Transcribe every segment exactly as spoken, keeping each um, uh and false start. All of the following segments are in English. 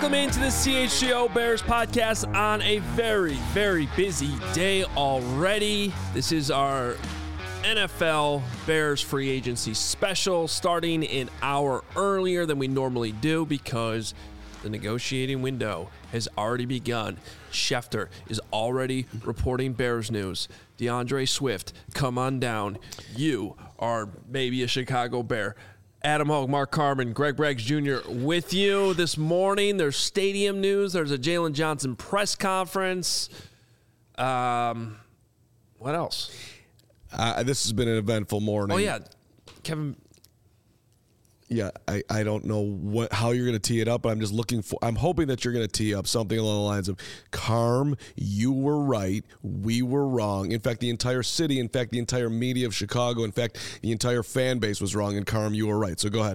Welcome into the C H G O Bears podcast on a very, very busy day already. This is our N F L Bears free agency special, starting an hour earlier than we normally do because the negotiating window has already begun. Schefter is already reporting Bears news. DeAndre Swift, come on down. You are maybe a Chicago Bear. Adam Hogue, Mark Carman, Greg Braggs Junior with you this morning. There's stadium news. There's a Jalen Johnson press conference. Um, what else? Uh, this has been an eventful morning. Oh, yeah. Kevin. Yeah, I, I don't know what how you're going to tee it up, but I'm just looking for, I'm hoping that you're going to tee up something along the lines of, Carm, you were right, we were wrong. In fact, the entire city, in fact, the entire media of Chicago, in fact, the entire fan base was wrong, and Carm, you were right. So go ahead.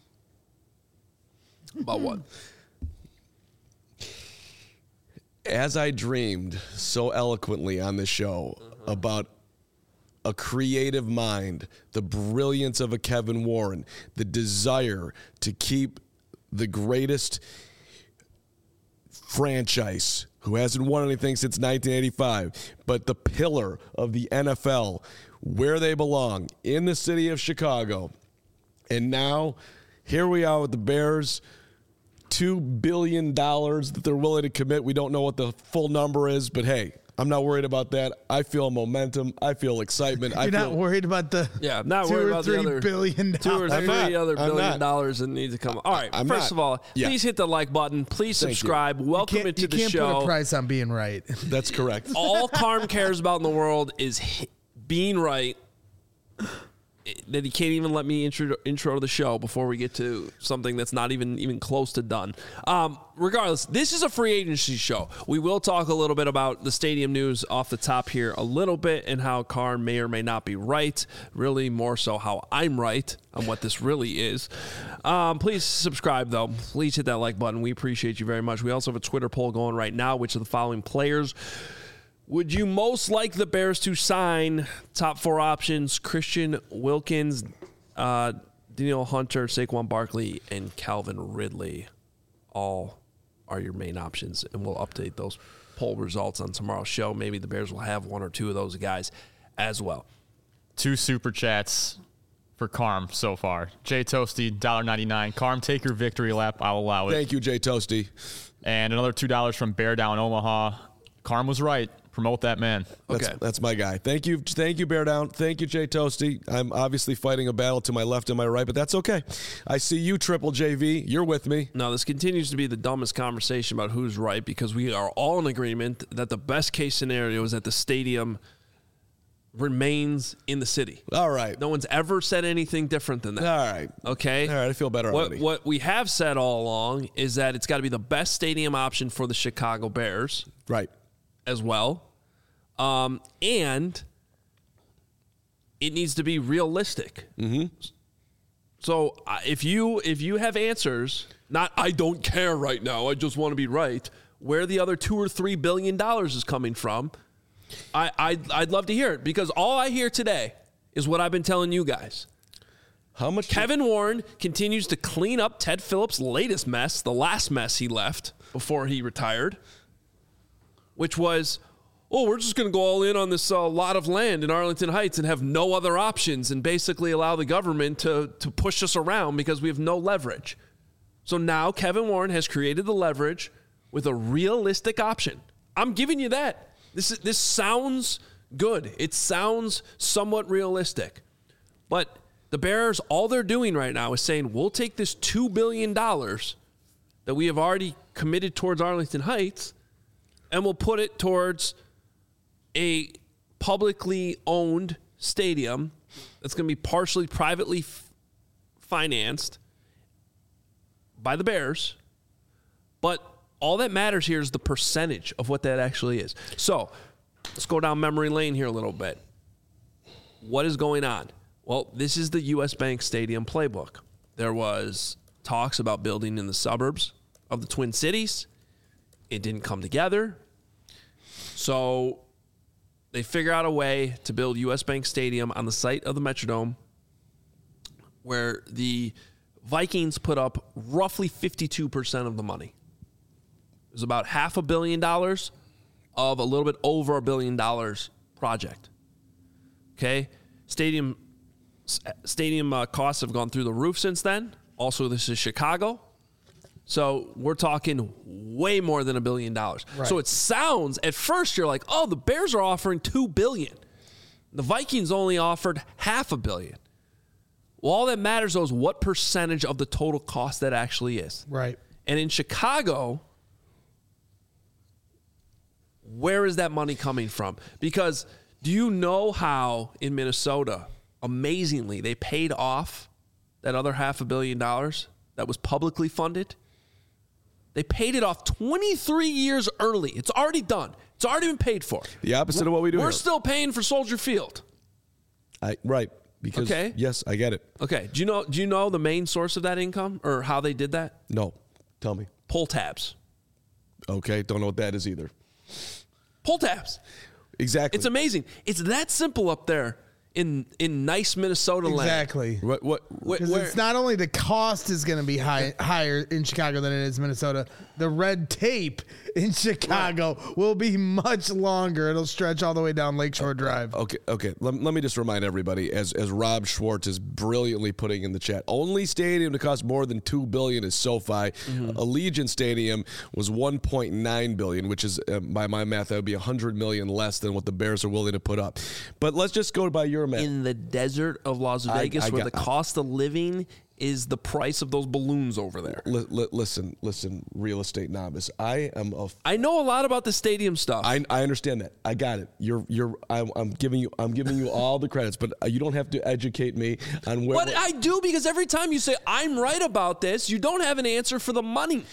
About what? As I dreamed so eloquently on this show uh-huh. about a creative mind, the brilliance of a Kevin Warren, the desire to keep the greatest franchise who hasn't won anything since nineteen eighty-five, but the pillar of the N F L, where they belong, in the city of Chicago. And now, here we are with the Bears, two billion dollars that they're willing to commit. We don't know what the full number is, but hey, I'm not worried about that. I feel momentum. I feel excitement. You're I feel, not worried about the yeah, not two worried or about three the other billion two or dollars. three I'm not. other I'm billion not. dollars that need to come. All right, I'm first not. of all, Yeah. please hit the like button. Please Thank subscribe. you. Welcome you can't, into you the can't show. put a price on being right. That's correct. All Carm cares about in the world is hi- being right. That he can't even let me intro, intro the show before we get to something that's not even even close to done. Um, regardless, this is a free agency show. We will talk a little bit about the stadium news off the top here a little bit and how Carm may or may not be right. Really more so how I'm right on what this really is. Um, please subscribe, though. Please hit that like button. We appreciate you very much. We also have a Twitter poll going right now, which are the following players would you most like the Bears to sign? Top four options: Christian Wilkins, uh, Danielle Hunter, Saquon Barkley, and Calvin Ridley. All are your main options, and we'll update those poll results on tomorrow's show. Maybe the Bears will have one or two of those guys as well. Two super chats for Carm so far. Jay Toasty, one dollar ninety-nine. Carm, take your victory lap. I'll allow it. Thank you, Jay Toasty. And another two dollars from Bear Down Omaha. Carm was right. Promote that man. That's, okay. that's my guy. Thank you. Thank you, Bear Down. Thank you, Jay Toasty. I'm obviously fighting a battle to my left and my right, but that's okay. I see you, Triple J V. You're with me. No, this continues to be the dumbest conversation about who's right because we are all in agreement that the best case scenario is that the stadium remains in the city. All right. No one's ever said anything different than that. All right. Okay? All right. I feel better what, already. What we have said all along is that it's got to be the best stadium option for the Chicago Bears. Right. As well. Um, and it needs to be realistic. Mm-hmm. So uh, if you if you have answers, not I don't care right now, I just want to be right, where the other two or three billion dollars is coming from, I I'd, I'd love to hear it because all I hear today is what I've been telling you guys. How much? Kevin Warren continues to clean up Ted Phillips' latest mess, the last mess he left before he retired, which was, oh, we're just going to go all in on this uh, lot of land in Arlington Heights and have no other options and basically allow the government to, to push us around because we have no leverage. So now Kevin Warren has created the leverage with a realistic option. I'm giving you that. This is, this sounds good. It sounds somewhat realistic. But the Bears, all they're doing right now is saying, we'll take this two billion dollars that we have already committed towards Arlington Heights and we'll put it towards a publicly owned stadium that's going to be partially privately f- financed by the Bears. But all that matters here is the percentage of what that actually is. So let's go down memory lane here a little bit. What is going on? Well, this is the U S Bank Stadium playbook. There was talks about building in the suburbs of the Twin Cities. It didn't come together. So they figure out a way to build U S Bank Stadium on the site of the Metrodome where the Vikings put up roughly fifty-two percent of the money. It was about half a billion dollars of a little bit over a billion dollars project. Okay? Stadium stadium uh, costs have gone through the roof since then. Also, this is Chicago. So we're talking way more than a billion dollars. Right. So it sounds, at first you're like, oh, the Bears are offering two billion dollars. The Vikings only offered half a billion. Well, all that matters, though, is what percentage of the total cost that actually is. Right. And in Chicago, where is that money coming from? Because do you know how in Minnesota, amazingly, they paid off that other half a billion dollars that was publicly funded? They paid it off twenty-three years early. It's already done. It's already been paid for. The opposite of what we do We're here. still paying for Soldier Field. I, right. Because, Okay. yes, I get it. Okay. Do you know do you know the main source of that income or how they did that? No. Tell me. Pull tabs. Okay. Don't know what that is either. Pull tabs. Exactly. It's amazing. It's that simple up there in in nice Minnesota land. Exactly. What, what, Wh- Because where- it's not only the cost is going to be high, higher in Chicago than it is Minnesota. The red tape in Chicago will be much longer. It'll stretch all the way down Lakeshore Drive. Okay, okay. Let, let me just remind everybody, as as Rob Schwartz is brilliantly putting in the chat, only stadium to cost more than two billion dollars is SoFi. Mm-hmm. Allegiant Stadium was one point nine billion dollars, which is uh, by my math that would be one hundred million dollars less than what the Bears are willing to put up. But let's just go by your math. in the desert of Las I- Vegas, I where got- the cost of living is the price of those balloons over there. Li- li- listen, listen, real estate novice. I am a. I know a lot about the stadium stuff. I, I understand that. I got it. You're you're. I'm, I'm giving you. I'm giving you all the credits, but you don't have to educate me on where. but I do, because every time you say I'm right about this, you don't have an answer for the money.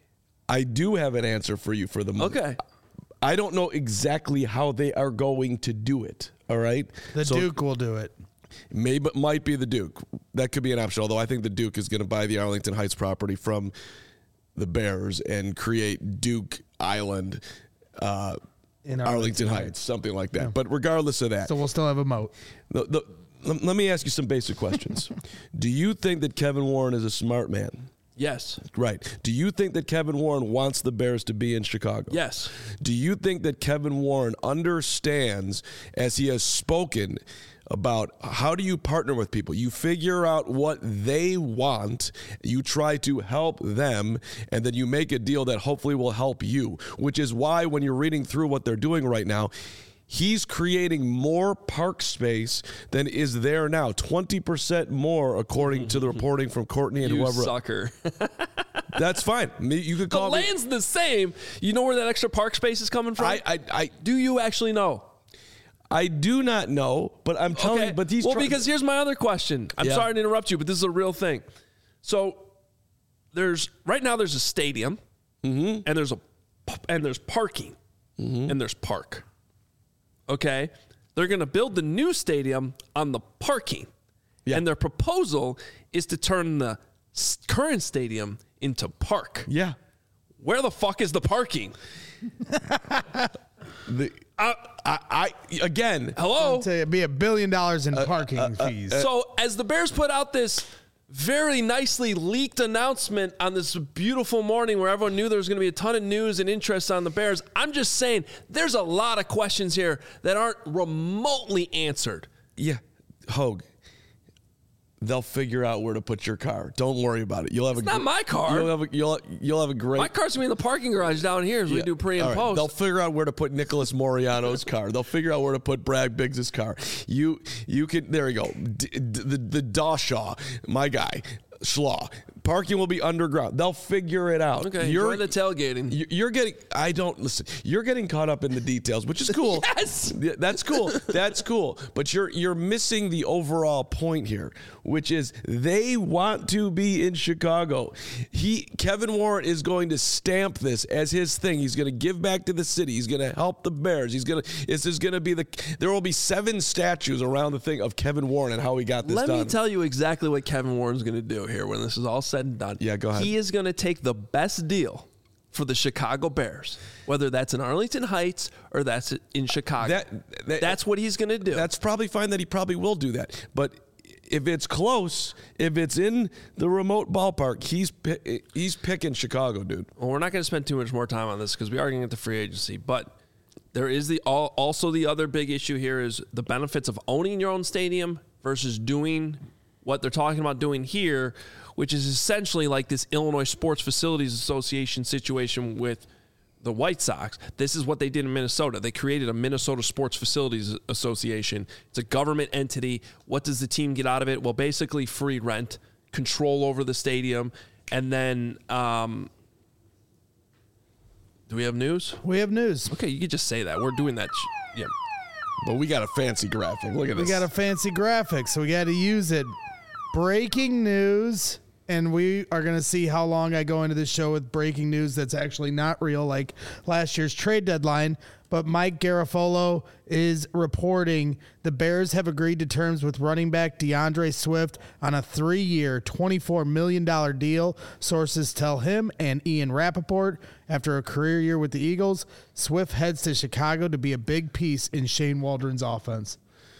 I do have an answer for you for the money. Okay. I don't know exactly how they are going to do it. All right. The So Duke will do it. maybe might be the Duke. That could be an option. Although I think the Duke is going to buy the Arlington Heights property from the Bears and create Duke Island, uh, In Arlington, Arlington Heights, Heights. something like that. But regardless of that, So we'll still have a moat. the, the, let let me ask you some basic questions. Do you think that Kevin Warren is a smart man? Yes. Right. Do you think that Kevin Warren wants the Bears to be in Chicago? Yes. Do you think that Kevin Warren understands, as he has spoken, about how do you partner with people? You figure out what they want, you try to help them, and then you make a deal that hopefully will help you, which is why when you're reading through what they're doing right now, he's creating more park space than is there now. twenty percent more, according to the reporting from Courtney and You whoever. sucker. That's fine. Me- You could The call me. land's the same. You know where that extra park space is coming from? I, I, I, do you actually know? I do not know, but I'm telling you, but these well, try- because here's my other question. I'm Yeah. sorry to interrupt you, but this is a real thing. So there's right now there's a stadium, Mm-hmm. and there's a and there's parking, and there's park. Okay, they're going to build the new stadium on the parking, Yeah. and their proposal is to turn the s- current stadium into park. yeah. Where the fuck is the parking? The, I, I, I, again, Hello. I'll tell you, it'd be a billion dollars in parking fees. So as the Bears put out this very nicely leaked announcement on this beautiful morning where everyone knew there was going to be a ton of news and interest on the Bears, I'm just saying there's a lot of questions here that aren't remotely answered. yeah, Hogue, they'll figure out where to put your car. Don't worry about it. You'll have It's a not gr- my car. You'll have a, you'll, you'll have a great. My car's going to be in the parking garage down here as we Yeah. do pre and All right. post. They'll figure out where to put Nicholas Moriano's car. They'll figure out where to put Brad Biggs' car. You you can there you go. D- d- the the Dawshaw, my guy, Schlaw. Parking will be underground. They'll figure it out. okay, You're enjoy the tailgating. you- You're getting. I don't listen. You're getting caught up in the details, which is cool. Yes! Yeah, that's cool. That's cool. But you're you're missing the overall point here, which is they want to be in Chicago. He Kevin Warren is going to stamp this as his thing. He's going to give back to the city. He's going to help the Bears. He's going to. This is going to be the. There will be seven statues around the thing of Kevin Warren and how he got this Let done. me tell you exactly what Kevin Warren's going to do here when this is all said and done. Yeah, go ahead. He is going to take the best deal for the Chicago Bears, whether that's in Arlington Heights or that's in Chicago. That- that- that's what he's going to do. That's probably fine that he probably will do that. But if it's close, if it's in the remote ballpark, he's pi- he's picking Chicago, dude. Well, we're not going to spend too much more time on this because we are going to get to free agency. But there is the all, also the other big issue here is the benefits of owning your own stadium versus doing what they're talking about doing here, which is essentially like this Illinois Sports Facilities Association situation with the White Sox. This is what they did in Minnesota. They created a Minnesota Sports Facilities Association. It's a government entity. What does the team get out of it? Well, basically free rent, control over the stadium, and then um, do we have news? We have news. Okay, you could just say that. We're doing that. Sh- yeah. But we got a fancy graphic. Look at We this. got a fancy graphic, so we got to use it. Breaking news. And we are going to see how long I go into this show with breaking news that's actually not real, like last year's trade deadline. But Mike Garafolo is reporting the Bears have agreed to terms with running back DeAndre Swift on a three-year, twenty-four million dollars deal. Sources tell him and Ian Rappaport, after a career year with the Eagles, Swift heads to Chicago to be a big piece in Shane Waldron's offense.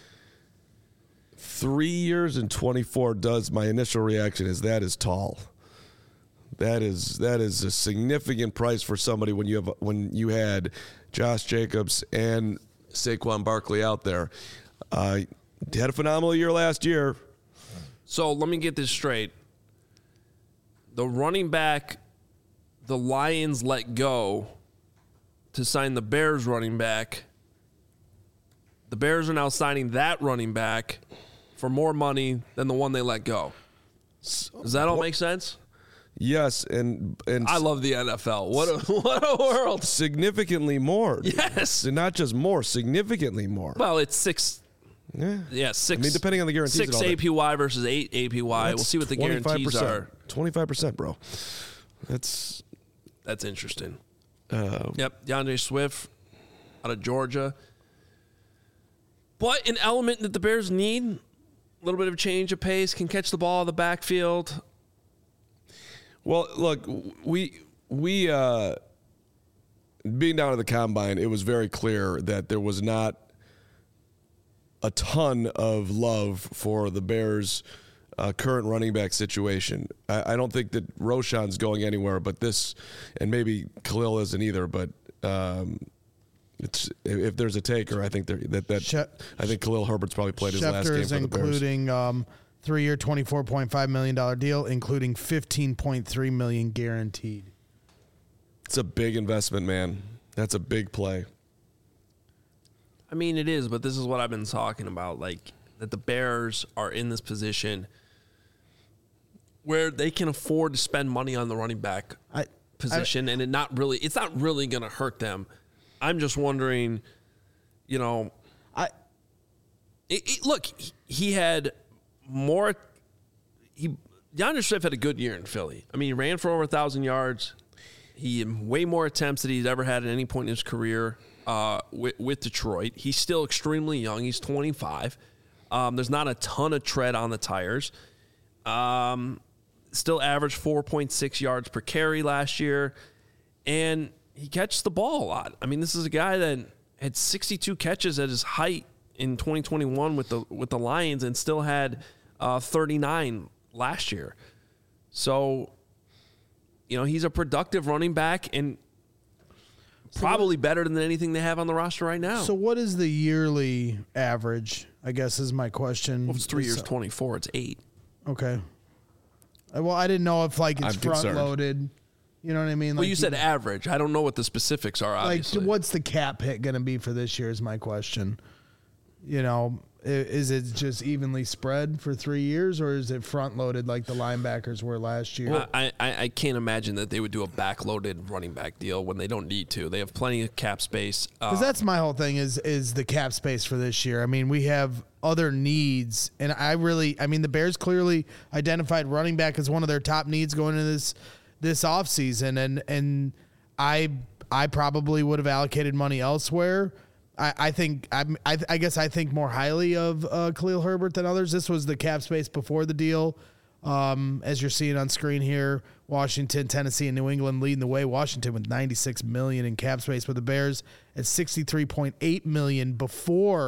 Three years and twenty-four does. My initial reaction is that is tall. That is that is a significant price for somebody when you have when you had Josh Jacobs and Saquon Barkley out there. Uh, had a phenomenal year last year. So let me get this straight. The running back the Lions let go to sign the Bears running back. The Bears are now signing that running back for more money than the one they let go. Does that all make sense? Yes, and and I love the N F L. What a, what a world. significantly more. Yes. And not just more, significantly more. Well, it's six. Yeah. Yeah, six. I mean, depending on the guarantees Six and all that. A P Y versus eight A P Y. We'll That's see what the guarantees are. twenty-five percent, bro. That's That's interesting. uh, Yep, DeAndre Swift out of Georgia. But an element that the Bears need, a little bit of change of pace, can catch the ball in the backfield. well. Look, we we uh, being down at the combine, it was very clear that there was not a ton of love for the Bears' uh, current running back situation. I, I don't think that Roshan's going anywhere, but this, and maybe Khalil isn't either. But um, it's if there's a taker, I think there, that that She- I think Khalil Herbert's probably played his last Schefter game is for the Bears. including um, three-year, twenty-four point five million dollars deal, including fifteen point three million dollars guaranteed. It's a big investment, man. That's a big play. I mean, it is, but this is what I've been talking about, like that the Bears are in this position where they can afford to spend money on the running back I, position, and it not really, it's not really going to hurt them. I'm just wondering, you know, I, it, it, look, he, he had more. He DeAndre Swift had a good year in Philly. I mean, he ran for over a thousand yards. He had way more attempts than he's ever had at any point in his career. Uh, with, with Detroit. He's still extremely young. He's twenty-five. Um, there's not a ton of tread on the tires. Um, still averaged four point six yards per carry last year. And he catches the ball a lot. I mean, this is a guy that had sixty-two catches at his height in twenty twenty-one with the with the Lions and still had uh, thirty-nine last year. So, you know, he's a productive running back and probably better than anything they have on the roster right now. so what is the yearly average, I guess is my question. Well, if it's three years, So- twenty-four, it's eight. Okay. Uh, Well, I didn't know if like it's I'm front concerned. loaded. You know what I mean? Well, Like you said average. I don't know what the specifics are, like obviously. what's the cap hit going to be for this year is my question. You know, i- is it just evenly spread for three years or is it front loaded like the linebackers were last year? I, I, I can't imagine that they would do a backloaded running back deal when they don't need to. They have plenty of cap space. Uh, Because that's my whole thing is is the cap space for this year. I mean, we have other needs, and I really, I mean, the Bears clearly identified running back as one of their top needs going into this this offseason, and and I I probably would have allocated money elsewhere. I, I think I'm, I I guess I think more highly of uh, Khalil Herbert than others. This was the cap space before the deal. Um, as you're seeing on screen here, Washington, Tennessee, and New England leading the way. Washington with ninety-six million dollars in cap space, with the Bears at sixty-three point eight million dollars before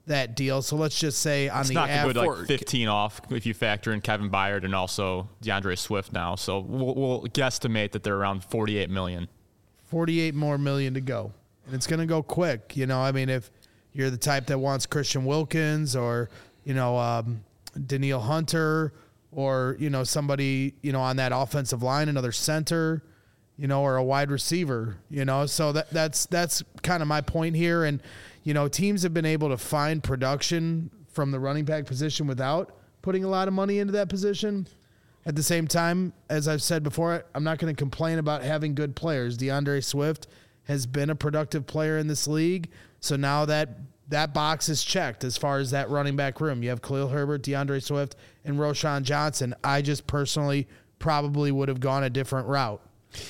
that deal. So let's just say on It's the not average, good, like fifteen off if you factor in Kevin Byard and also DeAndre Swift now. So we'll, we'll guesstimate that they're around forty-eight million. forty-eight more million to go. And it's going to go quick. You know, I mean, if you're the type that wants Christian Wilkins or, you know, um, Daniil Hunter or, you know, somebody, you know, on that offensive line, another center, you know, or a wide receiver, you know, so that that's, that's kind of my point here. And, you know, teams have been able to find production from the running back position without putting a lot of money into that position. At the same time, as I've said before, I'm not going to complain about having good players. DeAndre Swift has been a productive player in this league. So now that that box is checked as far as that running back room. You have Khalil Herbert, DeAndre Swift, and Roschon Johnson. I just personally probably would have gone a different route.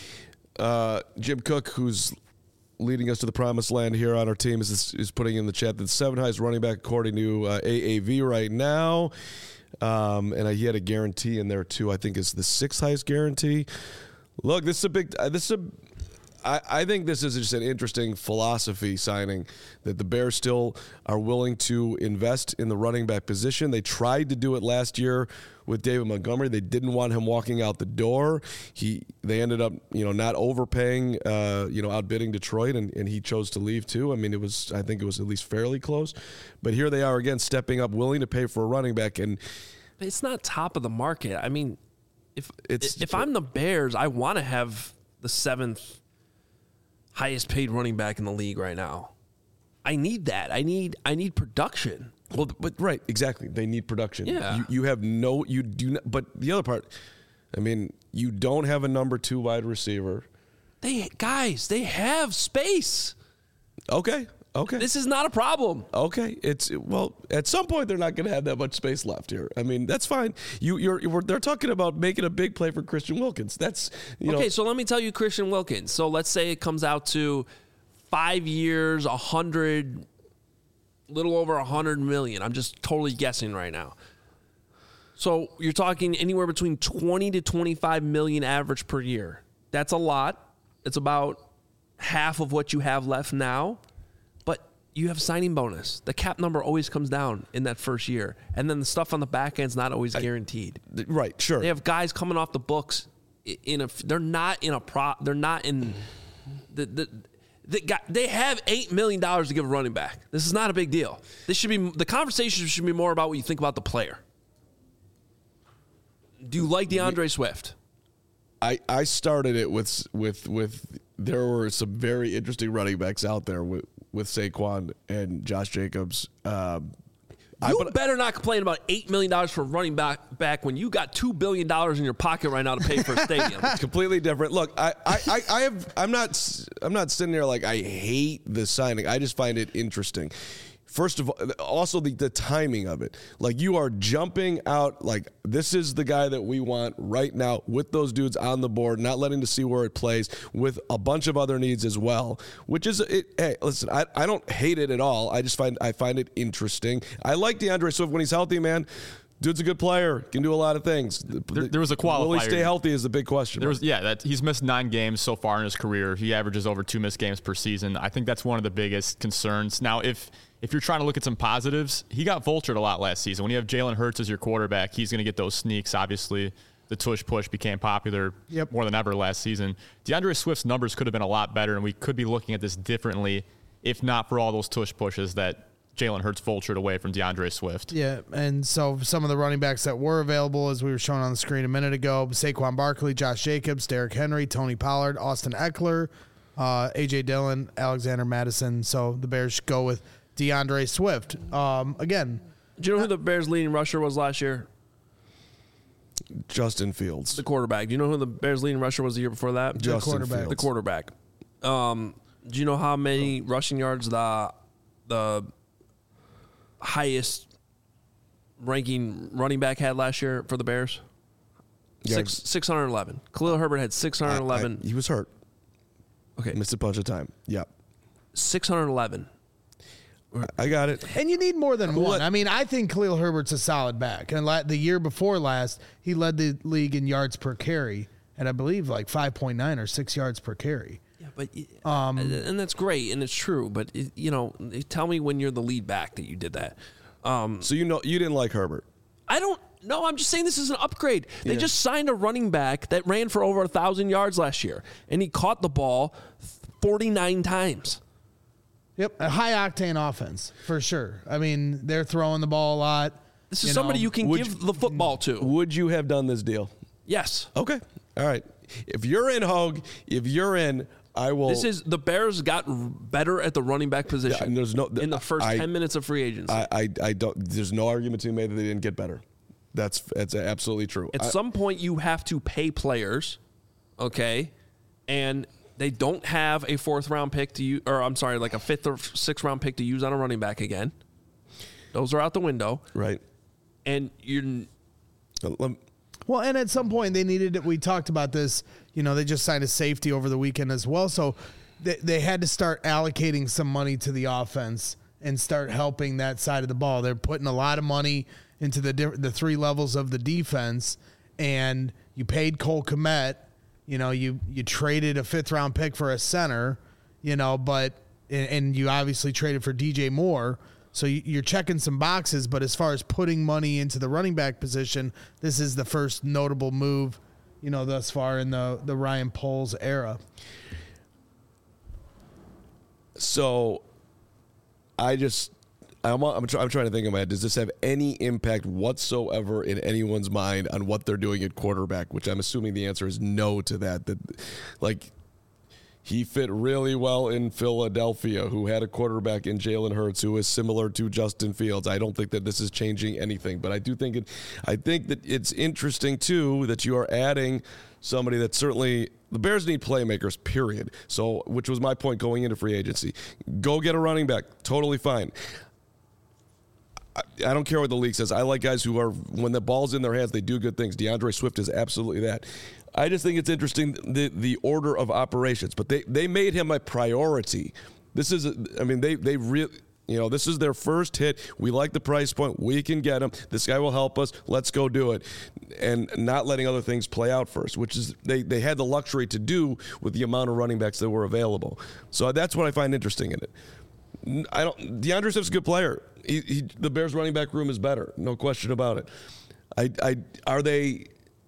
Uh, Jim Cook, who's leading us to the promised land here on our team, is is putting in the chat that the seventh highest running back according to uh, A A V right now. Um, and he had a guarantee in there too. I think it's the sixth highest guarantee. Look, this is a big. Uh, this is a. I, I think this is just an interesting philosophy signing that the Bears still are willing to invest in the running back position. They tried to do it last year with David Montgomery. They didn't want him walking out the door. He they ended up you know not overpaying, uh, you know outbidding Detroit, and, and he chose to leave too. I mean, it was I think it was at least fairly close. But here they are again, stepping up, willing to pay for a running back, and it's not top of the market. I mean, if It's- if I'm the Bears, I want to have the seventh highest paid running back in the league right now. I need that. I need I need production. Well, but right, exactly. They need production. Yeah. You, you have no, you do not, but the other part, I mean, you don't have a number two wide receiver. They guys, they have space. Okay. Okay. This is not a problem. Okay. It's, well, at some point they're not going to have that much space left here. I mean, that's fine. You, you're, you're they're talking about making a big play for Christian Wilkins. That's, you Okay, know. so let me tell you Christian Wilkins. So let's say it comes out to five years, a hundred, little over a hundred million. I'm just totally guessing right now. So you're talking anywhere between twenty to twenty-five million average per year. That's a lot. It's about half of what you have left now. But you have signing bonus. The cap number always comes down in that first year. And then the stuff on the back end's not always guaranteed. I, right. Sure. They have guys coming off the books in a. They're not in a pro. They're not in the the. They, got, they have eight million dollars to give a running back. This is not a big deal. This should be the conversation should be more about what you think about the player. Do you like DeAndre Swift? I, I started it with with with there were some very interesting running backs out there with, with Saquon and Josh Jacobs. Um, You I, but, better not complain about eight million dollars for a running back, back when you got two billion dollars in your pocket right now to pay for a stadium. completely different. Look, I, I, I, I have I'm not I'm not sitting there like I hate the signing. I just find it interesting. First of all, also the, the timing of it. Like you are jumping out like this is the guy that we want right now with those dudes on the board, not letting to see where it plays with a bunch of other needs as well, which is it. Hey, listen, I, I don't hate it at all. I just find I find it interesting. I like DeAndre Swift when he's healthy, man. Dude's a good player, can do a lot of things. There, there was a qualifier. Will he stay healthy is the big question. There was, yeah, that he's missed nine games so far in his career. He averages over two missed games per season. I think that's one of the biggest concerns. Now, if if you're trying to look at some positives, he got vultured a lot last season. When you have Jalen Hurts as your quarterback, he's going to get those sneaks. Obviously, the tush push became popular Yep. more than ever last season. DeAndre Swift's numbers could have been a lot better, and we could be looking at this differently if not for all those tush pushes that Jalen Hurts vultured away from DeAndre Swift. Yeah, and so some of the running backs that were available, as we were showing on the screen a minute ago, Saquon Barkley, Josh Jacobs, Derrick Henry, Tony Pollard, Austin Eckler, uh, A J Dillon, Alexander Madison. So the Bears go with DeAndre Swift. Um, again, Do you know who the Bears' leading rusher was last year? Justin Fields. The quarterback. Do you know who the Bears' leading rusher was the year before that? Justin quarterback. Fields. The quarterback. Um, do you know how many rushing yards the the highest ranking running back had last year for the Bears? Yeah. Six six hundred eleven. Khalil Herbert had six hundred eleven. I- I- he was hurt. Okay, Missed a bunch of time. Yeah. six hundred eleven. I got it. and you need more than one. What- I mean, I think Khalil Herbert's a solid back. And la- the year before last, he led the league in yards per carry, and I believe like five point nine or six yards per carry. Yeah, but um, and that's great and it's true. But it, you know, tell me when you're the lead back that you did that. Um, so you know you didn't like Herbert. I don't. No, I'm just saying this is an upgrade. They yeah. just signed a running back that ran for over a thousand yards last year, and he caught the ball forty-nine times. Yep, a high octane offense for sure. I mean, they're throwing the ball a lot. This is you somebody know. you can Would give you, the football to. Would you have done this deal? Yes. Okay. All right. If you're in, Hogue, if you're in, I will. This is the Bears got better at the running back position. Yeah, and there's no in the first I, ten minutes of free agency. I, I, I don't. There's no argument to be made that they didn't get better. That's that's absolutely true. At I, some point, you have to pay players, okay, and they don't have a fourth round pick to use, or I'm sorry, like a fifth or sixth round pick to use on a running back again. Those are out the window, right? And you're. Well, and at some point they needed it. We talked about this. You know, they just signed a safety over the weekend as well, so they they had to start allocating some money to the offense and start helping that side of the ball. They're putting a lot of money into the the three levels of the defense, and you paid Cole Kmet. You know, you you traded a fifth round pick for a center. You know, but and, and you obviously traded for D J Moore. So you're checking some boxes, but as far as putting money into the running back position, this is the first notable move, you know, thus far in the the Ryan Poles era. So, I just. I'm, I'm, try, I'm trying to think in my head, does this have any impact whatsoever in anyone's mind on what they're doing at quarterback, which I'm assuming the answer is no to that. That, like, he fit really well in Philadelphia, who had a quarterback in Jalen Hurts, who is similar to Justin Fields. I don't think that this is changing anything, but I do think it, I think that it's interesting, too, that you are adding somebody that certainly – the Bears need playmakers, period. So, which was my point going into free agency. Go get a running back. Totally fine. I don't care what the league says. I like guys who are, when the ball's in their hands, they do good things. DeAndre Swift is absolutely that. I just think it's interesting, the the order of operations. But they, they made him a priority. This is, I mean, they, they really, you know, this is their first hit. We like the price point. We can get him. This guy will help us. Let's go do it. And not letting other things play out first, which is, they, they had the luxury to do with the amount of running backs that were available. So that's what I find interesting in it. I don't. DeAndre Swift's a good player. He, he, the Bears' running back room is better, no question about it. I, I are they?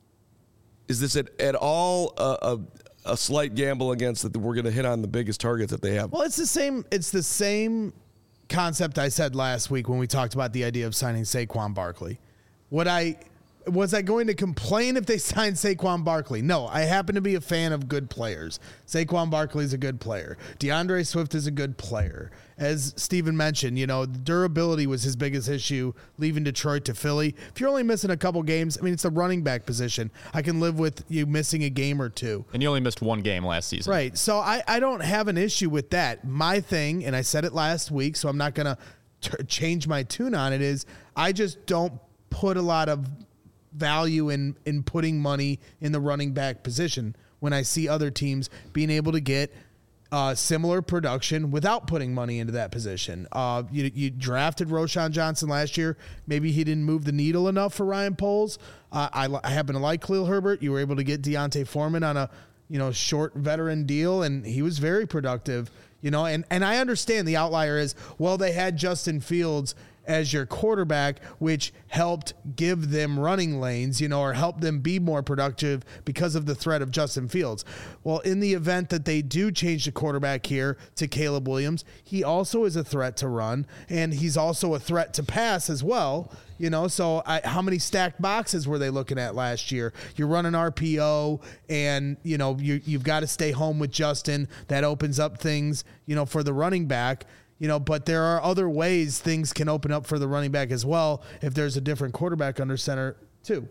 Is this at, at all a, a, a slight gamble against that we're going to hit on the biggest targets that they have? Well, it's the same. It's the same concept I said last week when we talked about the idea of signing Saquon Barkley. What I was I going to complain if they signed Saquon Barkley? No, I happen to be a fan of good players. Saquon Barkley is a good player. DeAndre Swift is a good player. As Steven mentioned, you know, durability was his biggest issue leaving Detroit to Philly. If you're only missing a couple games, I mean, it's the running back position. I can live with you missing a game or two. And you only missed one game last season. Right. So I, I don't have an issue with that. My thing, and I said it last week, so I'm not going to change my tune on it, is I just don't put a lot of value in in putting money in the running back position when I see other teams being able to get uh, similar production without putting money into that position. Uh, you, you drafted Roschon Johnson last year. Maybe he didn't move the needle enough for Ryan Poles. Uh, I, I happen to like Khalil Herbert. You were able to get Deontay Foreman on a you know short veteran deal, and he was very productive. You know, and, and I understand the outlier is, well, they had Justin Fields as your quarterback, which helped give them running lanes, you know, or help them be more productive because of the threat of Justin Fields. Well, in the event that they do change the quarterback here to Caleb Williams, he also is a threat to run, and he's also a threat to pass as well. You know, so I, how many stacked boxes were they looking at last year? You're running R P O, and, you know, you, you've got to stay home with Justin. That opens up things, you know, for the running back. You know, but there are other ways things can open up for the running back as well if there's a different quarterback under center too.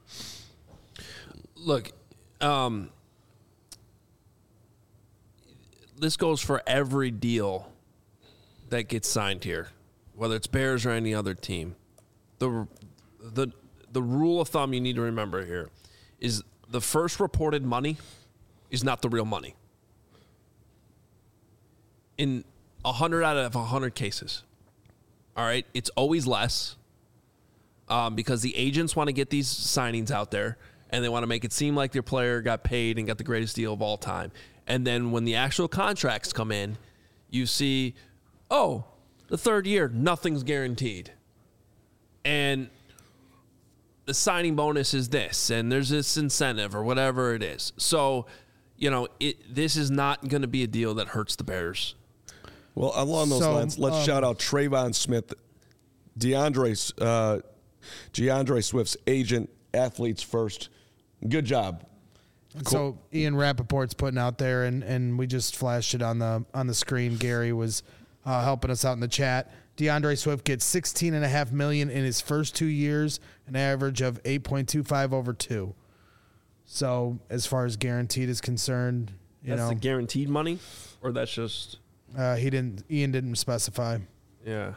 Look, um, this goes for every deal that gets signed here, whether it's Bears or any other team. The the the rule of thumb you need to remember here is the first reported money is not the real money. In one hundred out of one hundred cases. All right? It's always less um, because the agents want to get these signings out there, and they want to make it seem like their player got paid and got the greatest deal of all time. And then when the actual contracts come in, you see, oh, the third year, nothing's guaranteed. And the signing bonus is this, and there's this incentive or whatever it is. So, you know, it, this is not going to be a deal that hurts the Bears. Well, along those So, lines, let's um, shout out Trayvon Smith, DeAndre, uh, DeAndre Swift's agent, athletes first. Good job. So Ian Rappaport's putting out there, and, and we just flashed it on the on the screen. Gary was uh, helping us out in the chat. DeAndre Swift gets sixteen and a half million in his first two years, an average of eight point two five over two. So as far as guaranteed is concerned, you That's know, the guaranteed money, or that's just uh, he didn't. Ian didn't specify. yeah.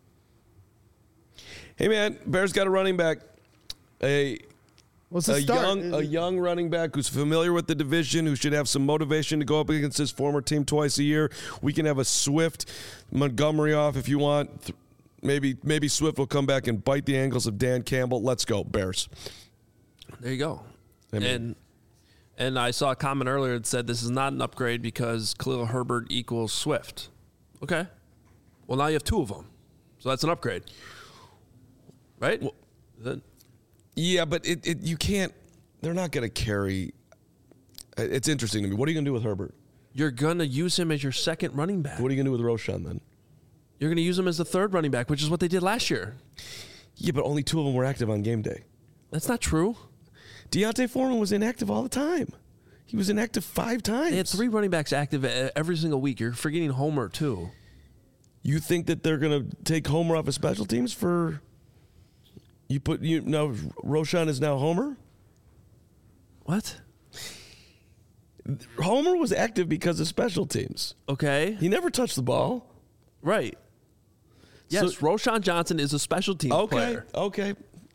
Hey, man, Bears got a running back. A What's the a start? young a young running back who's familiar with the division, who should have some motivation to go up against his former team twice a year. We can have a Swift Montgomery off if you want. Maybe maybe Swift will come back and bite the ankles of Dan Campbell. Let's go, Bears. There you go. I mean- and and I saw a comment earlier that said this is not an upgrade because Khalil Herbert equals Swift. Okay. Well, now you have two of them, so that's an upgrade, right? Well, then, Yeah, but it, it you can't. They're not going to carry. It's interesting to me. What are you going to do with Herbert? you're gonna use him as your second running back. What are you going to do with Roshan then? You're gonna use him as the third running back, which is what they did last year. Yeah, but only two of them were active on game day. That's not true. Deontay Foreman was inactive all the time. He was inactive five times. They had three running backs active e- every single week. You're forgetting Homer too. You think that they're going to take Homer off of special teams for? You put you no Roshan is now Homer. What? Homer was active because of special teams. Okay. He never touched the ball. Right. Yes, So- Roshan Johnson is a special teams Okay, player. okay.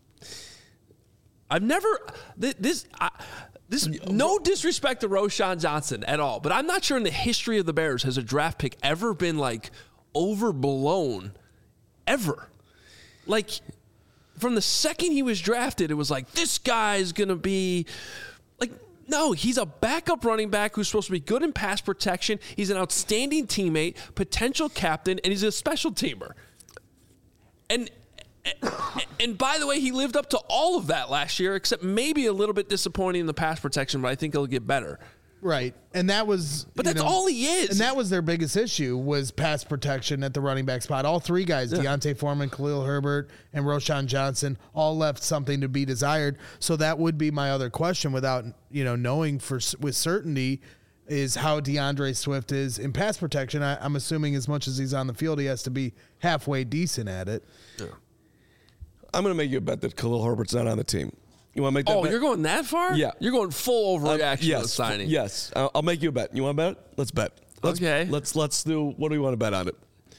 I've never th- this I, this no disrespect to Roshan Johnson at all, but I'm not sure in the history of the Bears has a draft pick ever been like overblown ever. Like from the second he was drafted, it was like this guy's gonna be like no, he's a backup running back who's supposed to be good in pass protection. He's an outstanding teammate, potential captain, and he's a special teamer. And and by the way, he lived up to all of that last year, except maybe a little bit disappointing in the pass protection, but I think he'll get better. Right. And that was But you that's know, all he is. And that was their biggest issue was pass protection at the running back spot. All three guys, Deontay Foreman, Khalil Herbert, and Roshan Johnson, all left something to be desired. So that would be my other question without, you know, knowing for with certainty is how DeAndre Swift is in pass protection. I, I'm assuming as much as he's on the field, he has to be halfway decent at it. Yeah. I'm going to make you a bet that Khalil Herbert's not on the team. You want to make that Oh, bet? you're going that far? Yeah. You're going full Um, overreaction to the yes, signing. Yes, I'll, I'll make you a bet. You want to bet? Let's bet. Let's, Okay. Let's let's do. What do you want to bet on it?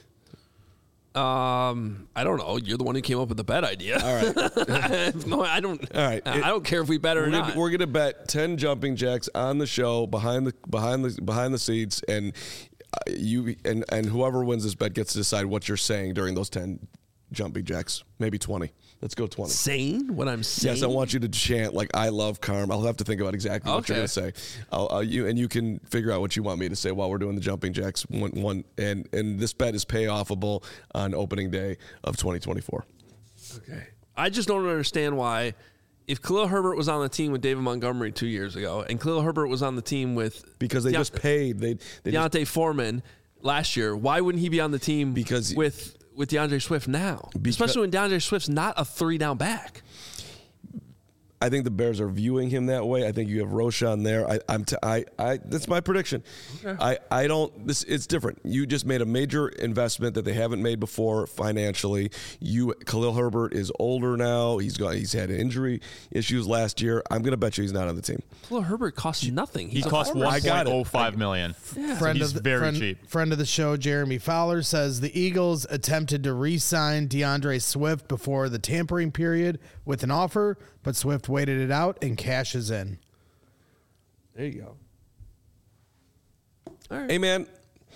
Um, I don't know. You're the one who came up with the bet idea. All right. no, I don't. All right. I don't care if we bet or We're not. gonna, we're gonna bet ten jumping jacks on the show behind the behind the behind the seats, and uh, you and and whoever wins this bet gets to decide what you're saying during those ten jumping jacks. Maybe twenty. Let's go twenty. saying what I'm saying. Yes, I want you to chant like "I love Carm." I'll have to think about exactly what you're Okay. going to say. I'll, I'll, you and you can figure out what you want me to say while we're doing the jumping jacks. One, one and and this bet is payoffable on opening day of twenty twenty-four. Okay. I just don't understand why, if Khalil Herbert was on the team with David Montgomery two years ago, and Khalil Herbert was on the team with Because they Deont- just paid. They, they just, Deontay Foreman last year, why wouldn't he be on the team Because- with with DeAndre Swift now? Because- Especially when DeAndre Swift's not a three down back. I think the Bears are viewing him that way. I think you have Roshan there. I, I'm. T- I. I. That's my prediction. Okay. I. I don't. This. It's different. You just made a major investment that they haven't made before financially. You. Khalil Herbert is older now. He's got. He's had injury issues last year. I'm going to bet you he's not on the team. Khalil Herbert costs nothing. He He's a costs former- one I got point it. oh five million. Yeah. Friend he's of the, very friend, cheap. Friend of the show, Jeremy Fowler, says the Eagles attempted to re-sign DeAndre Swift before the tampering period with an offer, but Swift waited it out and cashes in. There you go. All right. Hey man.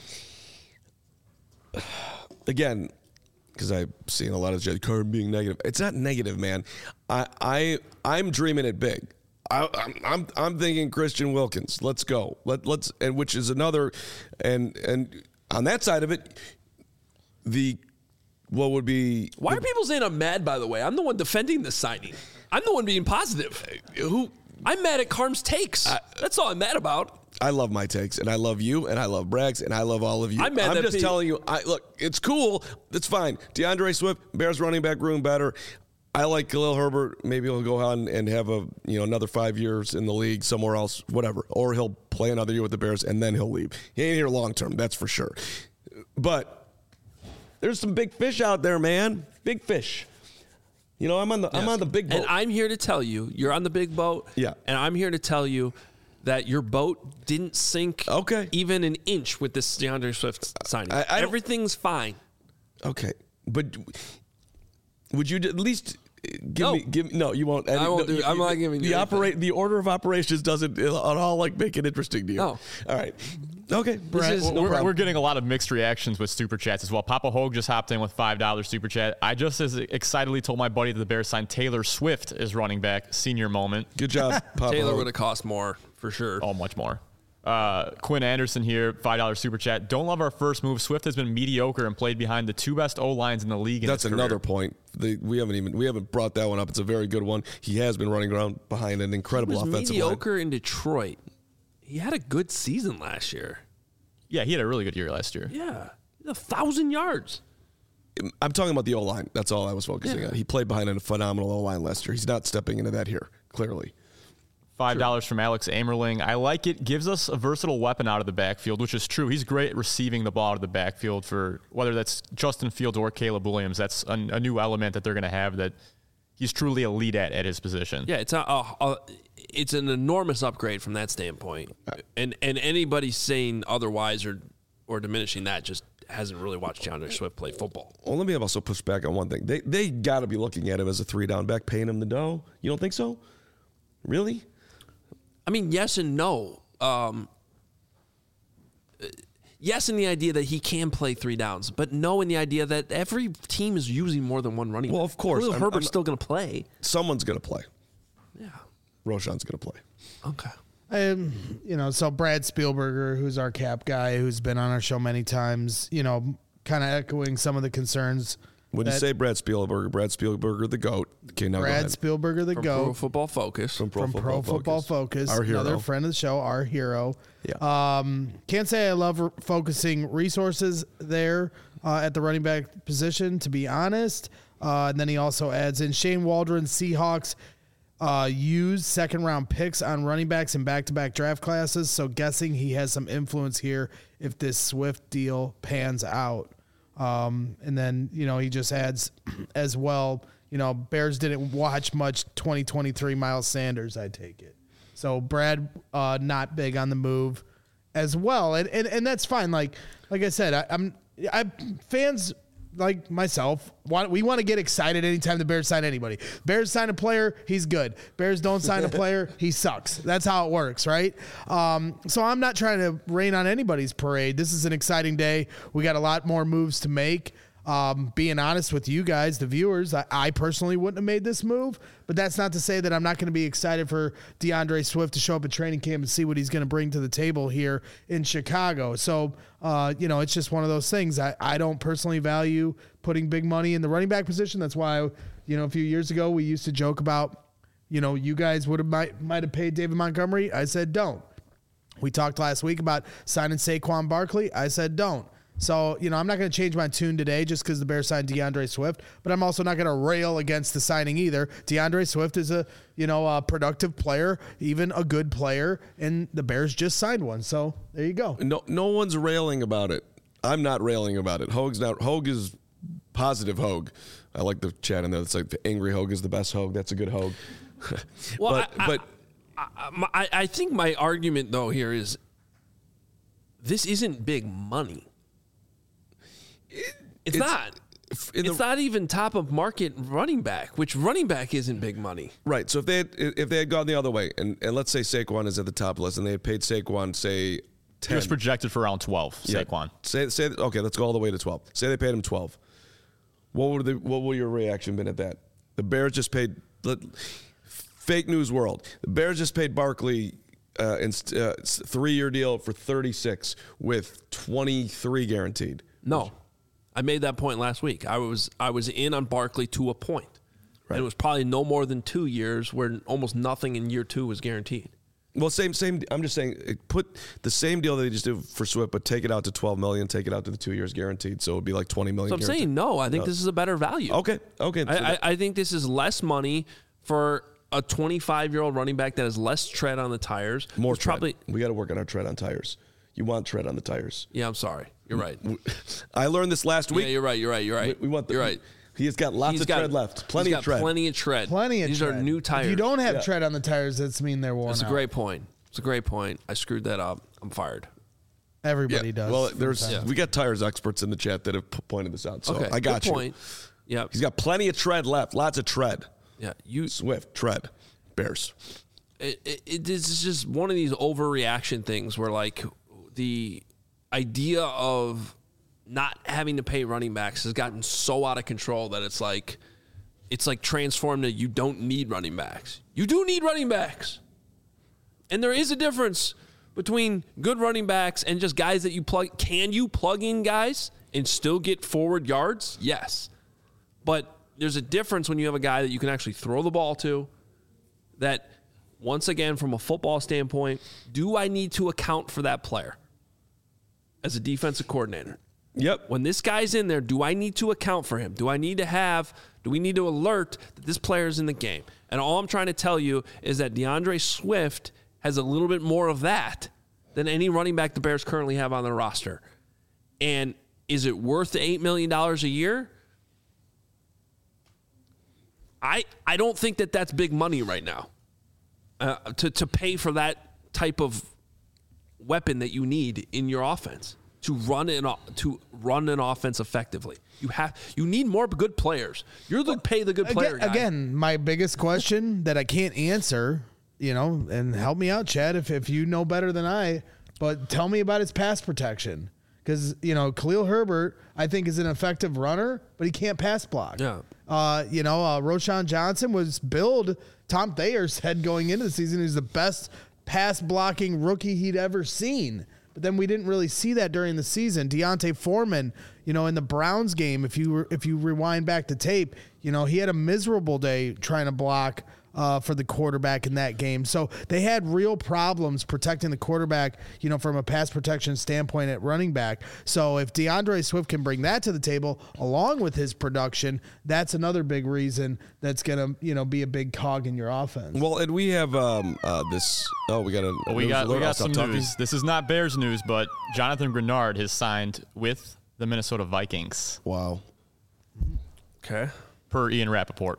Again, because I've seen a lot of Jed Carm being negative. It's not negative, man. I. I. I'm dreaming it big. I, I'm, I'm I'm thinking Christian Wilkins. Let's go. Let let's and which is another, and and on that side of it, the what would be Why are people saying I'm mad? By the way, I'm the one defending this signing. I'm the one being positive. who I'm mad at Carm's takes. I, That's all I'm mad about. I love my takes, and I love you, and I love Braggs, and I love all of you. I'm mad that just people- telling you. I look, it's cool. It's fine. DeAndre Swift, Bears running back room better. I like Khalil Herbert. Maybe he'll go on and have a you know another five years in the league somewhere else, whatever. Or he'll play another year with the Bears and then he'll leave. He ain't here long term, that's for sure. But there's some big fish out there, man. Big fish. You know, I'm on the yes. I'm on the big boat. And I'm here to tell you, you're on the big boat. Yeah. And I'm here to tell you that your boat didn't sink okay. even an inch with this DeAndre Swift signing. I, I Everything's fine. Okay. But would you at least give no. me give no, you won't. I won't no, do you, I'm not giving the you operate the order of operations doesn't at all like make it interesting to you. No. All right. Okay. This is, no we're, we're getting a lot of mixed reactions with super chats as well. Papa Hogue just hopped in with five dollars super chat. I just as excitedly told my buddy that the Bears signed Taylor Swift as running back. Senior moment. Good job, Papa Taylor Hogue. would have cost more for sure. Oh, much more. Uh, Quinn Anderson here, five dollars super chat. Don't love our first move. Swift has been mediocre and played behind the two best O-lines in the league. In That's his another career. point. The, we haven't even we haven't brought that one up. It's a very good one. He has been running around behind an incredible he was offensive mediocre line. in Detroit. He had a good season last year. Yeah, he had a really good year last year. Yeah, a thousand yards. I'm talking about the O-line. That's all I was focusing Yeah. on. He played behind a phenomenal O-line last year. He's not stepping into that here, clearly. Five dollars from Alex Amerling. I like it. Gives us a versatile weapon out of the backfield, which is true. He's great at receiving the ball out of the backfield for whether that's Justin Fields or Caleb Williams. That's a, a new element that they're going to have that he's truly elite at at his position. Yeah, it's a, a, a it's an enormous upgrade from that standpoint. And and anybody saying otherwise or or diminishing that just hasn't really watched DeAndre Swift play football. Well, let me also push back on one thing. They they got to be looking at him as a three down back, paying him the dough. You don't think so? Really? I mean, yes and no. Um, yes, in the idea that he can play three downs, but no in the idea that every team is using more than one running back. Well, of course. Khalil I'm- Herbert's I'm- still going to play. Someone's going to play. Yeah. Roshan's going to play. Okay. Um, you know, so Brad Spielberger, who's our cap guy, who's been on our show many times, you know, kind of echoing some of the concerns. When you that say Brad Spielberger, Brad Spielberger, the GOAT. Okay, now go Brad ahead. Spielberger, the From GOAT, Pro Football Focus. From Pro, from Football, Pro Football Focus. Focus, Our hero. another friend of the show, our hero. Yeah. Um, can't say I love r- focusing resources there uh, at the running back position, to be honest. Uh, and then he also adds in Shane Waldron, Seahawks uh, use second round picks on running backs in back to back draft classes. So guessing he has some influence here if this Swift deal pans out. Um, and then, you know, he just adds as well, you know, Bears didn't watch much twenty twenty-three Miles Sanders, I take it. So Brad, uh, not big on the move as well. And, and, and that's fine. Like, like I said, I, I'm, I fans like myself want, we want to get excited anytime the Bears sign anybody. Bears sign a player, he's good. Bears don't sign a player, he sucks. That's how it works, right? Um, so I'm not trying to rain on anybody's parade. This is an exciting day. We got a lot more moves to make. Um, being honest with you guys, the viewers, I, I personally wouldn't have made this move, but that's not to say that I'm not going to be excited for DeAndre Swift to show up at training camp and see what he's going to bring to the table here in Chicago. So, uh, you know, it's just one of those things. I, I don't personally value putting big money in the running back position. That's why, you know, a few years ago we used to joke about, you know, you guys would have might, might have paid David Montgomery. I said don't. We talked last week about signing Saquon Barkley. I said don't. So, you know, I'm not going to change my tune today just because the Bears signed DeAndre Swift, but I'm also not going to rail against the signing either. DeAndre Swift is a, you know, a productive player, even a good player, and the Bears just signed one. So there you go. No, no one's railing about it. I'm not railing about it. Hogue's not. Hogue is positive Hogue. I like the chat in there. It's like the angry Hogue is the best Hogue. That's a good Hogue. Well, but I, but I, I, I think my argument, though, here is this isn't big money. It's, it's not. in the- It's not even top of market running back, which running back isn't big money. right. So if they had, if they had gone the other way, and, and let's say Saquon is at the top of the list, and they had paid Saquon say He ten, was projected for around twelve, Yeah. Saquon. Say say okay, let's go all the way to twelve. Say they paid him twelve. What would the what would your reaction been at that? The Bears just paid fake news world. The Bears just paid Barkley uh, in uh, three-year deal for thirty-six with twenty-three guaranteed. No, I made that point last week. I was I was in on Barkley to a point. Right. And it was probably no more than two years where almost nothing in year two was guaranteed. Well, same, same. I'm just saying, put the same deal that they just did for Swift, but take it out to twelve million. Take it out to the two years guaranteed, so it would be like twenty million. So I'm guaranteed. saying no. I think no. This is a better value. Okay, okay. So I, I, I think this is less money for a twenty-five-year-old running back that has less tread on the tires. More it's tread. Probably, we got to work on our tread on tires. You want tread on the tires. Yeah, I'm sorry. You're right. I learned this last week. Yeah, you're right. You're right. You're right. We, we want the, you're right. He has got lots he's of got, tread left. Plenty he's got of tread. Plenty of tread. Plenty of These tread. are new tires. If you don't have yeah. tread on the tires, that's mean they're worn That's out. a great point. It's a great point. I screwed that up. I'm fired. Everybody yeah. does. Well, there's Yeah. we got tires experts in the chat that have p- pointed this out. So Okay, I got good you. point. Yeah. He's got plenty of tread left. Lots of tread. Yeah. You. Swift, tread, Bears. It, it, it is just one of these overreaction things where, like, the idea of not having to pay running backs has gotten so out of control that it's like, it's like transformed to you don't need running backs. You do need running backs. And there is a difference between good running backs and just guys that you plug. Can you plug in guys and still get forward yards? Yes. But there's a difference when you have a guy that you can actually throw the ball to that, once again, from a football standpoint, do I need to account for that player as a defensive coordinator? Yep. When this guy's in there, do I need to account for him? Do I need to have, do we need to alert that this player is in the game? And all I'm trying to tell you is that DeAndre Swift has a little bit more of that than any running back the Bears currently have on their roster. And is it worth the eight million dollars a year? I I don't think that that's big money right now uh, to, to pay for that type of weapon that you need in your offense. To run an to run an offense effectively, you have you need more good players. You're the pay the good player again, guy. again, my biggest question that I can't answer, you know, and help me out, Chad, if if you know better than I. But tell me about his pass protection, because you know Khalil Herbert, I think, is an effective runner, but he can't pass block. Yeah. Uh, you know, uh, Roschon Johnson was billed. Tom Thayer said going into the season he's the best pass blocking rookie he'd ever seen. But then we didn't really see that during the season. Deontay Foreman, you know, in the Browns game, if you were, if you rewind back the tape, you know, he had a miserable day trying to block uh, for the quarterback in that game. So they had real problems protecting the quarterback, you know, from a pass protection standpoint at running back. So if DeAndre Swift can bring that to the table along with his production, that's another big reason that's going to, you know, be a big cog in your offense. Well, and we have um, uh, this. Oh, we got a. Well, we news got alert. we I'll got stop some talking. news. This is not Bears news, but Jonathan Grenard has signed with the Minnesota Vikings, Wow. Okay. per Ian Rappaport.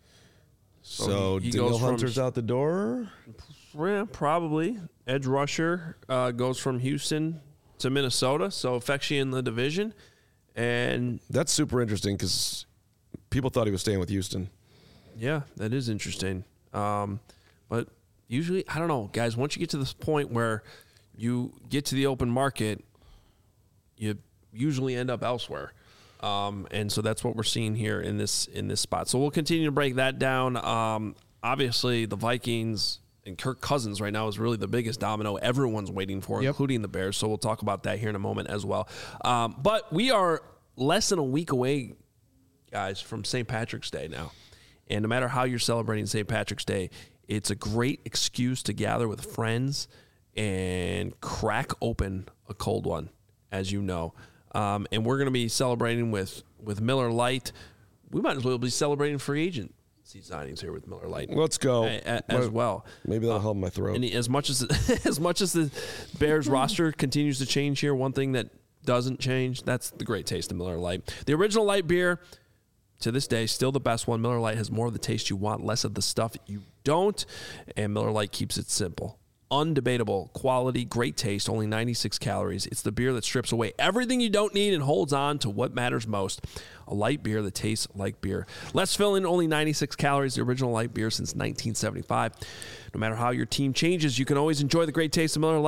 So he- he Daniel goes from- Hunter's out the door. Yeah, probably. Edge rusher uh, goes from Houston to Minnesota, so affects you in the division. And That's super interesting because people thought he was staying with Houston. yeah, that is interesting. Um, but usually, I don't know, guys, once you get to this point where you get to the open market, you usually end up elsewhere. Um, and so that's what we're seeing here in this in this spot. So we'll continue to break that down. Um, obviously, the Vikings and Kirk Cousins right now is really the biggest domino everyone's waiting for, Yep. including the Bears. So we'll talk about that here in a moment as well. Um, but we are less than a week away, guys, from Saint Patrick's Day now. And no matter how you're celebrating Saint Patrick's Day, it's a great excuse to gather with friends and crack open a cold one, as you know. Um, and we're going to be celebrating with, with Miller Lite. We might as well be celebrating free agency signings here with Miller Lite. Let's go. A- a- as well. Maybe that'll help my throat. And as much as as much as the Bears roster continues to change here, one thing that doesn't change, that's the great taste of Miller Lite. The original light beer, to this day, still the best one. Miller Lite has more of the taste you want, less of the stuff you don't, and Miller Lite keeps it simple. Undebatable quality, great taste, only ninety-six calories. It's the beer that strips away everything you don't need and holds on to what matters most. A light beer that tastes like beer. Less filling, only ninety-six calories. The original light beer since nineteen seventy-five. No matter how your team changes, you can always enjoy the great taste of Miller Lite.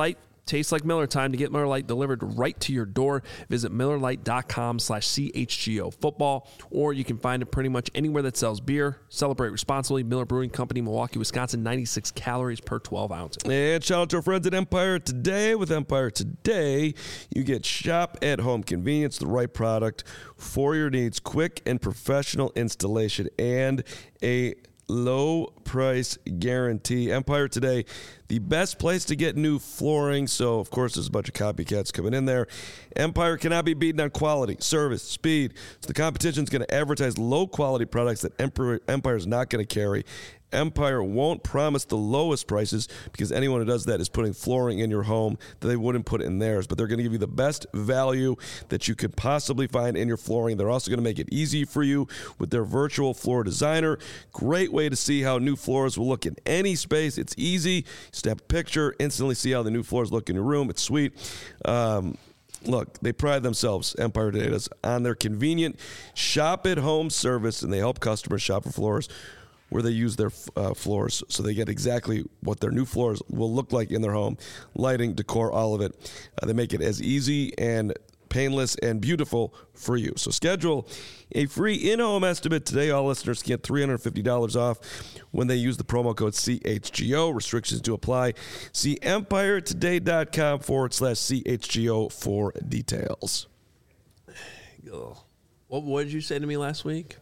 Tastes like Miller time. To get Miller Lite delivered right to your door, visit Miller Lite dot com slash C H G O football, or you can find it pretty much anywhere that sells beer. Celebrate responsibly. Miller Brewing Company, Milwaukee, Wisconsin, ninety-six calories per twelve ounces. And shout out to our friends at Empire Today. With Empire Today, you get shop-at-home convenience, the right product for your needs, quick and professional installation, and a low price guarantee. Empire Today, the best place to get new flooring. So, of course, there's a bunch of copycats coming in there. Empire cannot be beaten on quality, service, speed. So the competition's going to advertise low-quality products that Empire Empire's not going to carry. Empire won't promise the lowest prices because anyone who does that is putting flooring in your home that they wouldn't put in theirs. But they're going to give you the best value that you could possibly find in your flooring. They're also going to make it easy for you with their virtual floor designer. Great way to see how new floors will look in any space. It's easy. Snap a picture, instantly see how the new floors look in your room. It's sweet. Um, Look, they pride themselves, Empire Today does, on their convenient shop-at-home service, and they help customers shop for floors where they use their uh, floors so they get exactly what their new floors will look like in their home. Lighting, decor, all of it. Uh, they make it as easy and painless and beautiful for you. So schedule a free in-home estimate today. All listeners get three hundred fifty dollars off when they use the promo code C H G O. Restrictions do apply. See empiretoday.com forward slash CHGO for details. Ugh. What, what did you say to me last week?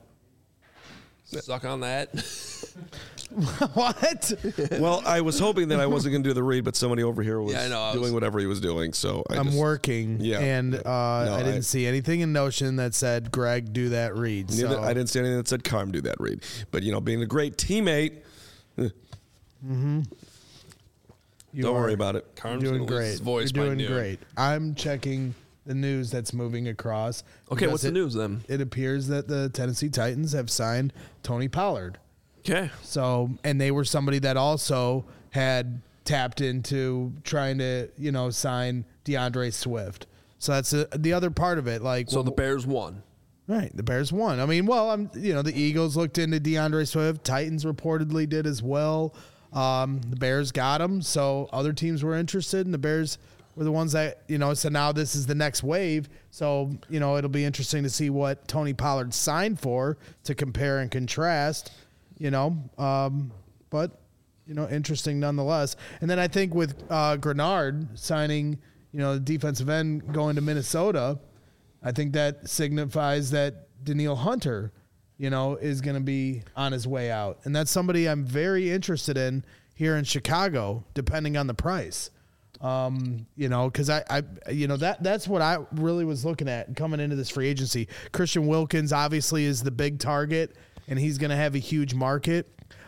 Suck on that. What? Well, I was hoping that I wasn't going to do the read, but somebody over here was Yeah, I know, I doing was- whatever he was doing. So I I'm just, working, Yeah. and uh, I didn't I- see anything in Notion that said, Greg, do that read. Neither, So I didn't see anything that said Carm do that read. But, you know, being a great teammate, eh, you don't are worry about it. Carm's doing gonna lose his great. voice You're by doing noon. great. I'm checking the news that's moving across. Okay, because what's the it- news then? It appears that the Tennessee Titans have signed Tony Pollard. Okay. So, and they were somebody that also had tapped into trying to, you know, sign DeAndre Swift. So that's a, the other part of it. Like, So well, the Bears won. right, the Bears won. I mean, well, I'm, you know, the Eagles looked into DeAndre Swift. Titans reportedly did as well. Um, the Bears got him. So other teams were interested, and the Bears were the ones that, you know, so now this is the next wave. So, you know, it'll be interesting to see what Tony Pollard signed for to compare and contrast. You know, um, but, you know, interesting nonetheless. And then I think with uh, Grenard signing, you know, the defensive end going to Minnesota, I think that signifies that Danielle Hunter, you know, is going to be on his way out. And that's somebody I'm very interested in here in Chicago, depending on the price. Um, you know, because I, I, you know, that that's what I really was looking at coming into this free agency. Christian Wilkins obviously is the big target, and he's going to have a huge market.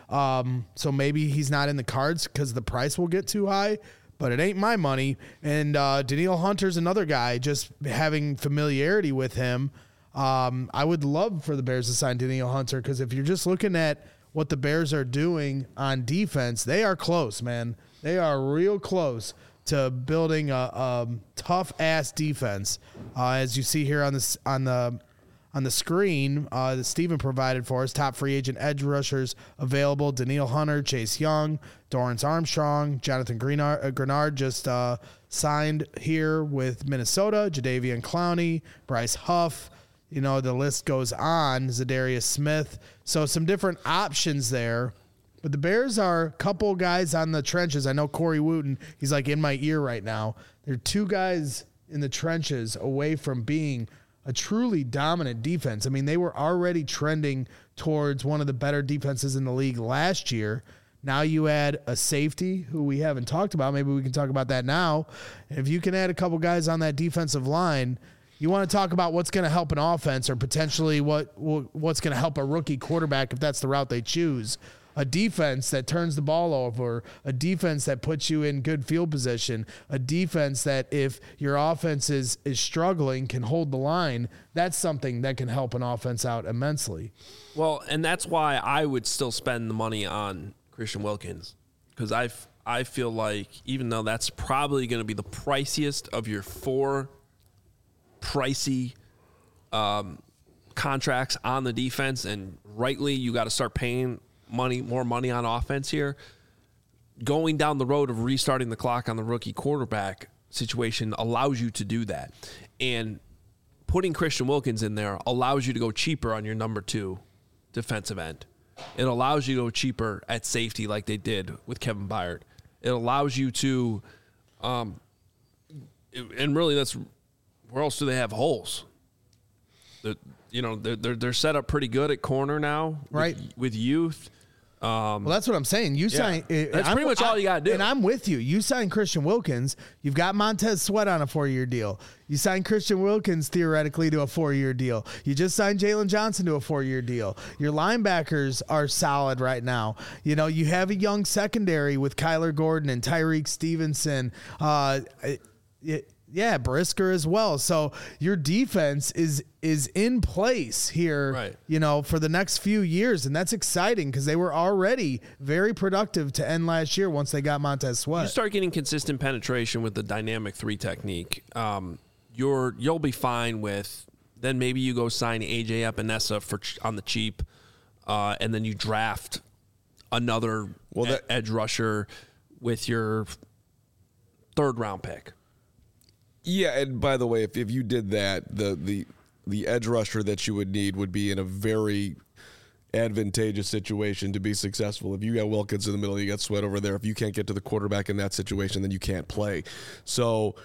Um, so maybe he's not in the cards because the price will get too high, but it ain't my money. And uh, Danielle Hunter's another guy, just having familiarity with him. Um, I would love for the Bears to sign Danielle Hunter because if you're just looking at what the Bears are doing on defense, they are close, man. They are real close to building a, a tough-ass defense. Uh, as you see here on this on the on the screen uh, that Steven provided for us, top free agent edge rushers available: Danielle Hunter, Chase Young, Dorrance Armstrong, Jonathan Grenard, uh, Grenard just uh, signed here with Minnesota, Jadeveon Clowney, Bryce Huff. You know, the list goes on, Zadarius Smith. So some different options there. But the Bears are a couple guys on the trenches. I know Corey Wooten, he's like in my ear right now. There are two guys in the trenches away from being a truly dominant defense. I mean, they were already trending towards one of the better defenses in the league last year. Now you add a safety who we haven't talked about. Maybe we can talk about that now. And if you can add a couple guys on that defensive line, you want to talk about what's going to help an offense or potentially what what's going to help a rookie quarterback if that's the route they choose. A defense that turns the ball over, a defense that puts you in good field position, a defense that if your offense is, is struggling can hold the line. That's something that can help an offense out immensely. Well, and that's why I would still spend the money on Christian Wilkins because I I feel like even though that's probably going to be the priciest of your four pricey um, contracts on the defense, and rightly you got to start paying money, more money on offense here. going down the road of restarting the clock on the rookie quarterback situation allows you to do that. And putting Christian Wilkins in there allows you to go cheaper on your number two defensive end. It allows you to go cheaper at safety like they did with Kevin Byard. It allows you to, um, and really that's, where else do they have holes? The, you know, they're, they're, they're set up pretty good at corner now. Right. With, with youth. Um, well, that's what I'm saying. You yeah. sign. That's I'm, pretty much all you got to do. And I'm with you. You sign Christian Wilkins. You've got Montez Sweat on a four-year deal. You sign Christian Wilkins theoretically to a four-year deal. You just signed Jalen Johnson to a four-year deal. Your linebackers are solid right now. You know, you have a young secondary with Kyler Gordon and Tyreek Stevenson. Uh, it, Yeah, Brisker as well. So your defense is is in place here, right. you know, for the next few years, and that's exciting because they were already very productive to end last year once they got Montez Sweat. You start getting consistent penetration with the dynamic three technique. Um, you're you'll be fine with. Then maybe you go sign A J Epinesa for on the cheap, uh, and then you draft another well, that, e- edge rusher with your third round pick. Yeah, and by the way, if, if you did that, the, the the edge rusher that you would need would be in a very advantageous situation to be successful. If you got Wilkins in the middle, you got Sweat over there. If you can't get to the quarterback in that situation, then you can't play. So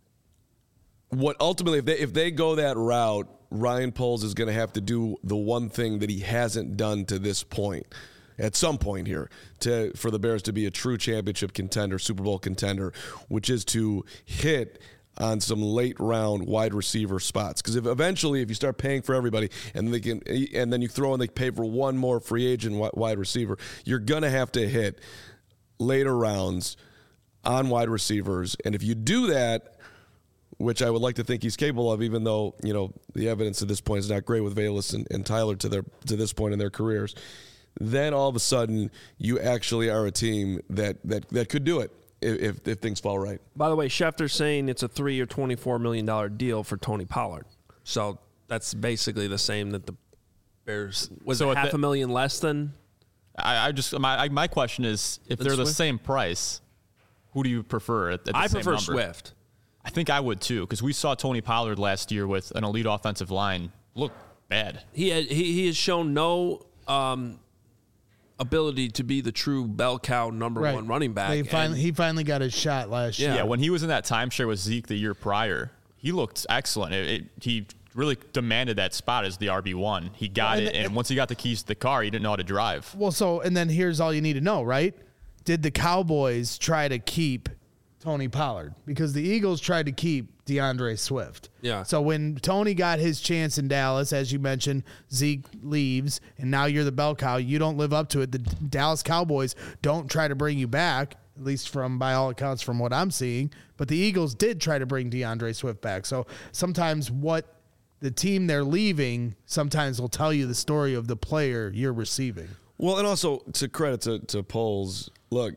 what ultimately, if they if they go that route, Ryan Poles is going to have to do the one thing that he hasn't done to this point. At some point here, to for the Bears to be a true championship contender, Super Bowl contender, which is to hit on some late round wide receiver spots. Because if eventually, if you start paying for everybody, and they can, and then you throw in they pay for one more free agent wide receiver, you're gonna have to hit later rounds on wide receivers. And if you do that, which I would like to think he's capable of, even though you know the evidence at this point is not great with Velus and, and Tyler to their to this point in their careers, then all of a sudden you actually are a team that that that could do it. If, if things fall right. By the way, Schefter's saying it's a three-year, twenty-four million dollars deal for Tony Pollard. So that's basically the same that the Bears was so it half the, a million less than. I, I just my my question is, if they're Swift? the same price, who do you prefer? At, at the I same prefer number? Swift. I think I would too, because we saw Tony Pollard last year with an elite offensive line look bad. He had, he he has shown no um, ability to be the true bell cow number Right. one running back. They finally, and- he finally got his shot last Yeah. year. Yeah, when he was in that timeshare with Zeke the year prior, he looked excellent. It, it, he really demanded that spot as the R B one. He got And- it, and once he got the keys to the car, he didn't know how to drive. Well, so, and then here's all you need to know, right? Did the Cowboys try to keep Tony Pollard? Because the Eagles tried to keep DeAndre Swift. Yeah. So when Tony got his chance in Dallas, as you mentioned, Zeke leaves, and now you're the bell cow. You don't live up to it. The Dallas Cowboys don't try to bring you back, at least from, by all accounts, from what I'm seeing. But the Eagles did try to bring DeAndre Swift back. So sometimes what the team they're leaving sometimes will tell you the story of the player you're receiving. Well, and also to credit to, to Poles, look,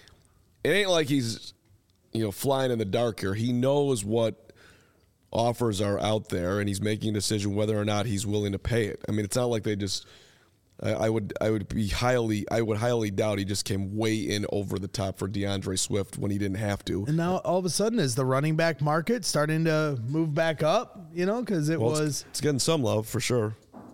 it ain't like he's, you know, flying in the dark here. He knows what offers are out there, and he's making a decision whether or not he's willing to pay it. I mean, it's not like they just. I, I would, I would be highly, I would highly doubt he just came way in over the top for DeAndre Swift when he didn't have to. And now all of a sudden, is the running back market starting to move back up? You know, because it Well, was. it's, it's getting some love for sure.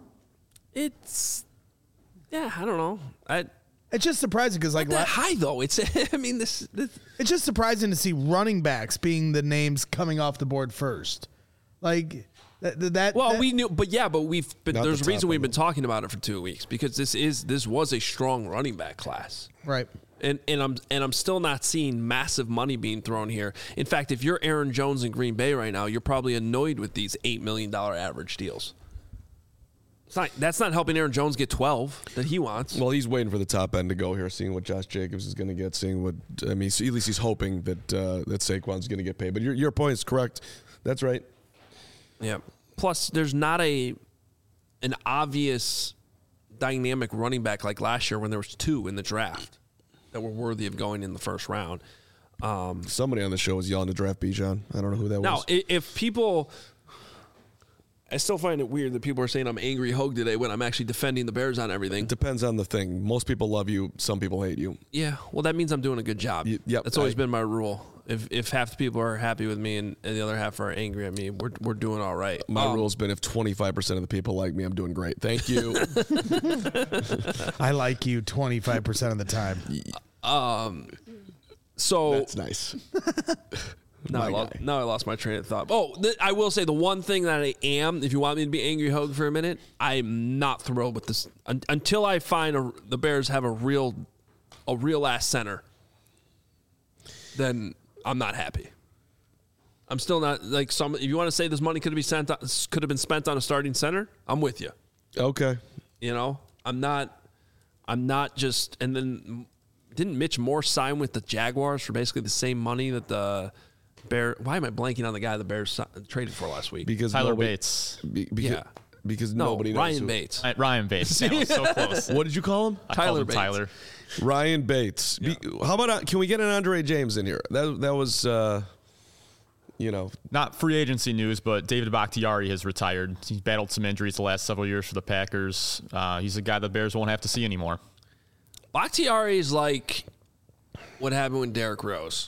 It's yeah, I don't know. I It's just surprising because, like, that la- high though. It's I mean this, this it's just surprising to see running backs being the names coming off the board first. Like that. that well that- we knew, but yeah, but we've been, Not there's the a reason top we've end. been talking about it for two weeks because this is this was a strong running back class. right. And and I'm and I'm still not seeing massive money being thrown here. In fact, if you're Aaron Jones in Green Bay right now, you're probably annoyed with these eight million dollar average deals. It's not, that's not helping Aaron Jones get twelve that he wants. Well, he's waiting for the top end to go here, seeing what Josh Jacobs is going to get, seeing what I mean. At least he's hoping that uh, that Saquon's going to get paid. But your your point is correct. That's right. Yeah. Plus, there's not a an obvious dynamic running back like last year when there was two in the draft that were worthy of going in the first round. Um, Somebody on the show was yelling to draft Bijan. I don't know who that now, was. i- if people, I still find it weird that people are saying I'm angry Hogue today when I'm actually defending the Bears on everything. It depends on the thing. Most people love you. Some people hate you. Yeah, well, that means I'm doing a good job. Y- yep, That's always I- been my rule. If if half the people are happy with me and, and the other half are angry at me, we're we're doing all right. My Um, rule's been if twenty-five percent of the people like me, I'm doing great. Thank you. I like you twenty-five percent of the time. So That's nice. now I, my lost, guy. now I lost my train of thought. Oh, th- I will say the one thing that I am, if you want me to be angry Hogue for a minute, I'm not thrilled with this un- until I find a, the Bears have a real a real ass center. Then I'm not happy. I'm still not like some. If you want to say this money could have been sent, could have been spent on a starting center, I'm with you. Okay. You know, I'm not. I'm not just. And then didn't Mitch Moore sign with the Jaguars for basically the same money that the Bear? Why am I blanking on the guy the Bears si- traded for last week? Because Tyler nobody, Bates. Be, because, Yeah. Because no, nobody knows Ryan who- Bates. Uh, Ryan Bates. That was so close. What did you call him? I Tyler called him Bates. Tyler. Ryan Bates. Be, how about uh, can we get an Andre James in here? That that was uh, you know, Not free agency news, but David Bakhtiari has retired. He's battled some injuries the last several years for the Packers. Uh, he's a guy the Bears won't have to see anymore. Bakhtiari is like what happened with Derrick Rose.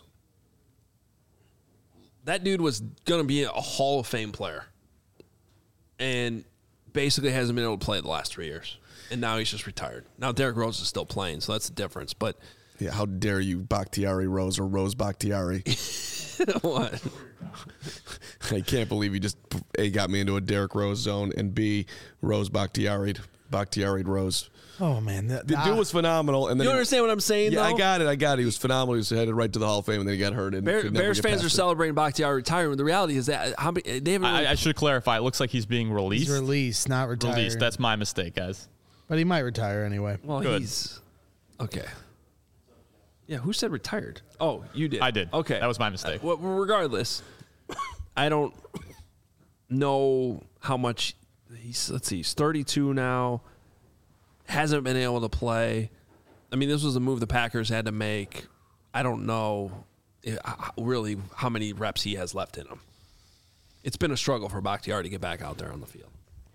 That dude was going to be a Hall of Fame player. And basically hasn't been able to play the last three years. And now he's just retired. Now Derrick Rose is still playing, so that's the difference. But yeah, how dare you, Bakhtiari Rose or Rose Bakhtiari? what? I can't believe you just A, got me into a Derrick Rose zone, and B, Rose Bakhtiari Bakhtiari Rose. Oh man, that, The dude was phenomenal, and then You he- understand what I'm saying, Yeah, though? I got it. I got it. He was phenomenal. He was headed right to the Hall of Fame, and then he got hurt. And Bear, could never Bears get fans past are it. celebrating Bakhtiari retirement. The reality is that how many, they haven't really, I, I should clarify. It looks like he's being released. he's released, not retired. Released. That's my mistake, guys. but he might retire anyway. well, good. he's okay. Yeah, who said retired? Oh, you did. I did. Okay, That was my mistake. Uh, well, regardless, I don't know how much he's. Let's see, he's thirty-two now. Hasn't been able to play. I mean, this was a move the Packers had to make. I don't know eh, really how many reps he has left in him. It's been a struggle for Bakhtiari to get back out there on the field.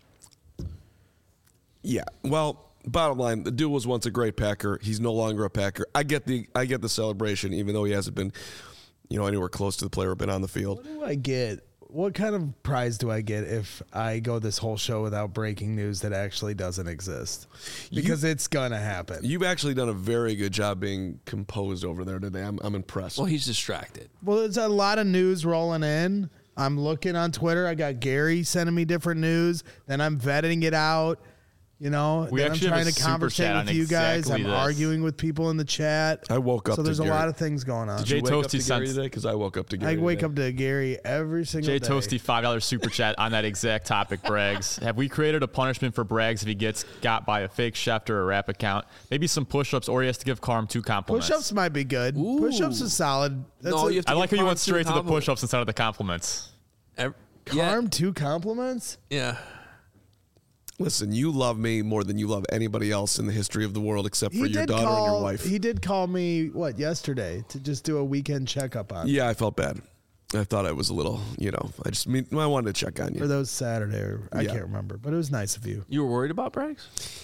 Yeah. Well, bottom line, the dude was once a great Packer. He's no longer a Packer. I get the I get the celebration, even though he hasn't been, you know, anywhere close to the player been on the field. What do I get? What kind of prize do I get if I go this whole show without breaking news that actually doesn't exist? Because it's gonna happen. You've actually done a very good job being composed over there today. I'm I'm impressed. Well, he's distracted. Well, there's a lot of news rolling in. I'm looking on Twitter. I got Gary sending me different news. Then I'm vetting it out. You know, We then I'm actually have trying a to super conversate chat with on you guys. exactly I'm this. arguing with people in the chat. I woke up So to there's a Gary. lot of things going on. Did Jay you wake up Toasty to Gary sends- today? Because I woke up to Gary I wake today. up to Gary every single Jay day. Toasty, five dollars super chat on that exact topic, Braggs. Have we created a punishment for Braggs if he gets got by a fake Schefter or rap account? Maybe some push-ups, or he has to give Carm two compliments. Push-ups might be good. Push-ups is solid. That's No, a, you have to I like how give you Carm went two straight to the compliments. push-ups instead of the compliments. Ev- Carm two compliments. Yeah. Listen, you love me more than you love anybody else in the history of the world, except for He your did daughter call. and your wife. He did call me what yesterday to just do a weekend checkup on. Yeah, I felt bad. I thought I was a little, you know, I just mean I wanted to check on Or you. those Saturday, or I Yeah. can't remember, but it was nice of you. You were worried about Braggs?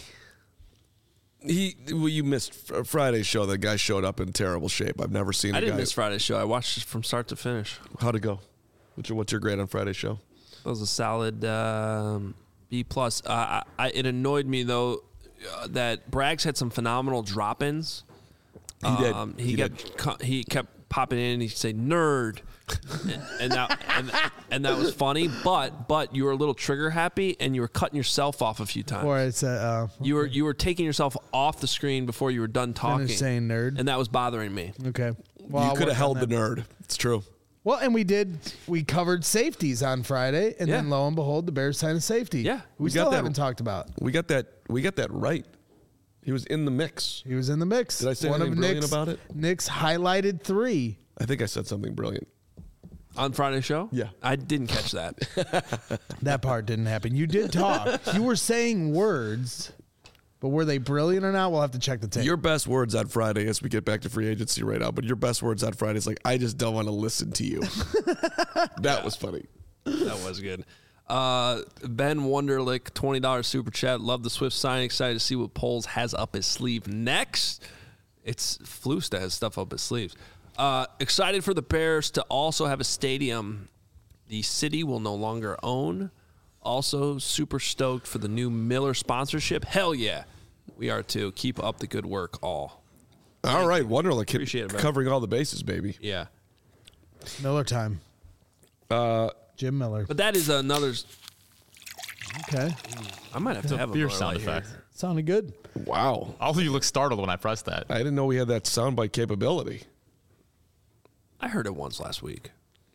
He, well, you missed fr- Friday's show. The guy showed up in terrible shape. I've never seen. I a didn't guy. miss Friday's show. I watched it from start to finish. How'd it go? What's your, what's your grade on Friday's show? That was a solid um, B plus. Uh, I, I, it annoyed me though uh, that Braggs had some phenomenal drop-ins. He did. Um, he, He kept co- he kept popping in. and He'd say nerd, and, and that and, and that was funny. But but you were a little trigger happy, and you were cutting yourself off a few times. Or it's a uh, You were you were taking yourself off the screen before you were done talking, finish saying nerd. and that was bothering me. Okay. Well, you I'll could work have on held the that. nerd. It's true. Well, and we did. We covered safeties on Friday, and Yeah. then lo and behold, the Bears signed a safety. Yeah. we, We got still that- haven't talked about. We got that. We got that right. He was in the mix. He was in the mix. Did I say One anything of brilliant Nick's, about it? Nick's highlighted three. I think I said something brilliant. On Friday's show? Yeah. I didn't catch that. That part didn't happen. You did talk. You were saying words, but were they brilliant or not? We'll have to check the tape. Your best words on Friday, as we get back to free agency right now, but your best words on Friday is like, I just don't want to listen to you. That was funny. That was good. Uh, Ben Wonderlick, twenty dollars super chat. Love the Swift sign. Excited to see what Poles has up his sleeve next. It's Flus that has stuff up his sleeves. Uh, excited for the Bears to also have a stadium the city will no longer own. Also, super stoked for the new Miller sponsorship. Hell yeah. We are too. Keep up the good work, all. All right, Wonderlick. Appreciate it, man. Covering all the bases, baby. Yeah. Miller time. Uh, Jim Miller. But that is another. Okay. I might have to have a Beer Miller sound Lite here. effect. Sounded good. wow. Also, you look startled when I pressed that. I didn't know we had that soundbite capability. I heard it once last week.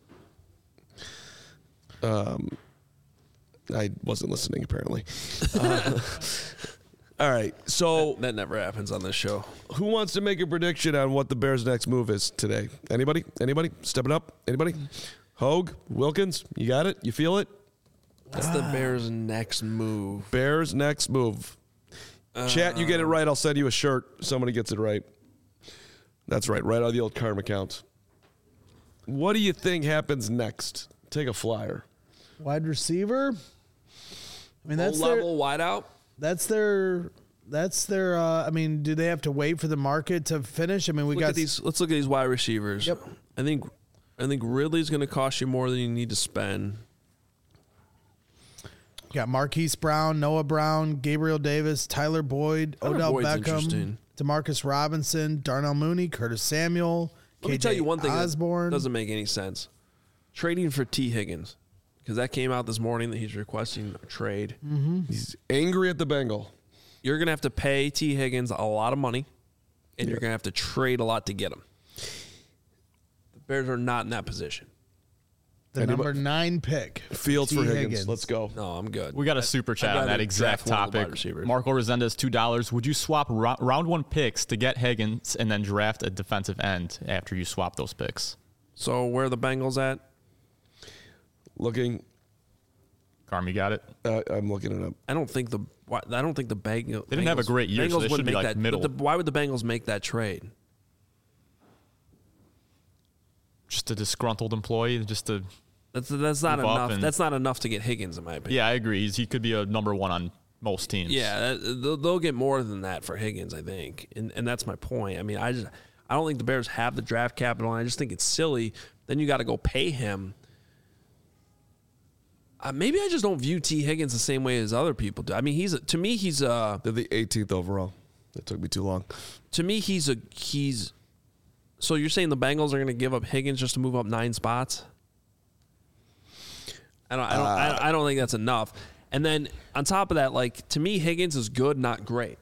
I wasn't listening, apparently. Uh, all right, so That never happens on this show. who wants to make a prediction on what the Bears' next move is today? Anybody? Anybody? Stepping up? Anybody? Hogue? Wilkins? You got it? You feel it? What's the Bears' next move? Bears' next move. Chat, you get it right, I'll send you a shirt. Somebody gets it right. That's right, right on the old Karm account. What do you think happens next? Take a flyer. Wide receiver. I mean, that's Low their, level wideout. that's their, that's their, uh, I mean, do they have to wait for the market to finish? I mean, we Look got at these. Let's look at these wide receivers. Yep. I think. I think Ridley's going to cost you more than you need to spend. got Marquise Brown, Noah Brown, Gabriel Davis, Tyler Boyd, Tyler Odell Boyd's Beckham, interesting. Demarcus Robinson, Darnell Mooney, Curtis Samuel, Let me K J tell you one thing Osborne. that doesn't make any sense. Trading for T. Higgins, because that came out this morning that he's requesting a trade. He's angry at the Bengal. You're going to have to pay T. Higgins a lot of money, and you're going to have to trade a lot to get him. The Bears are not in that position. the Anybody- number nine pick. Fields T. for Higgins. Let's go. No, I'm good. We got a super chat I'd on that rather exact draft one of the wide topic. receivers. Marco Resendez, two dollars. Would you swap ro- round one picks to get Higgins and then draft a defensive end after you swap those picks? So where are the Bengals at? Looking, Carm, you got it? uh, I'm looking it up. I don't think the why- I don't think the Bengals. They didn't have a great year, so Bengals they wouldn't should be, make like, that. middle. But the, why would the Bengals make that trade? Just a disgruntled employee, just to That's that's not Move up enough. and- That's not enough to get Higgins, in my opinion. yeah, I agree. He's, he could be a number one on most teams. Yeah, that- they'll, they'll get more than that for Higgins, I think, and and that's my point. I mean, I just I don't think the Bears have the draft capital, and I just think it's silly. Then you got to go pay him. Uh, maybe I just don't view T. Higgins the same way as other people do. I mean, he's a, to me he's a They're the eighteenth overall. It took me too long. to me he's a he's. So you're saying the Bengals are going to give up Higgins just to move up nine spots? I don't. I don't. I, don't- I don't think that's enough. And then on top of that, like to me, Higgins is good, not great.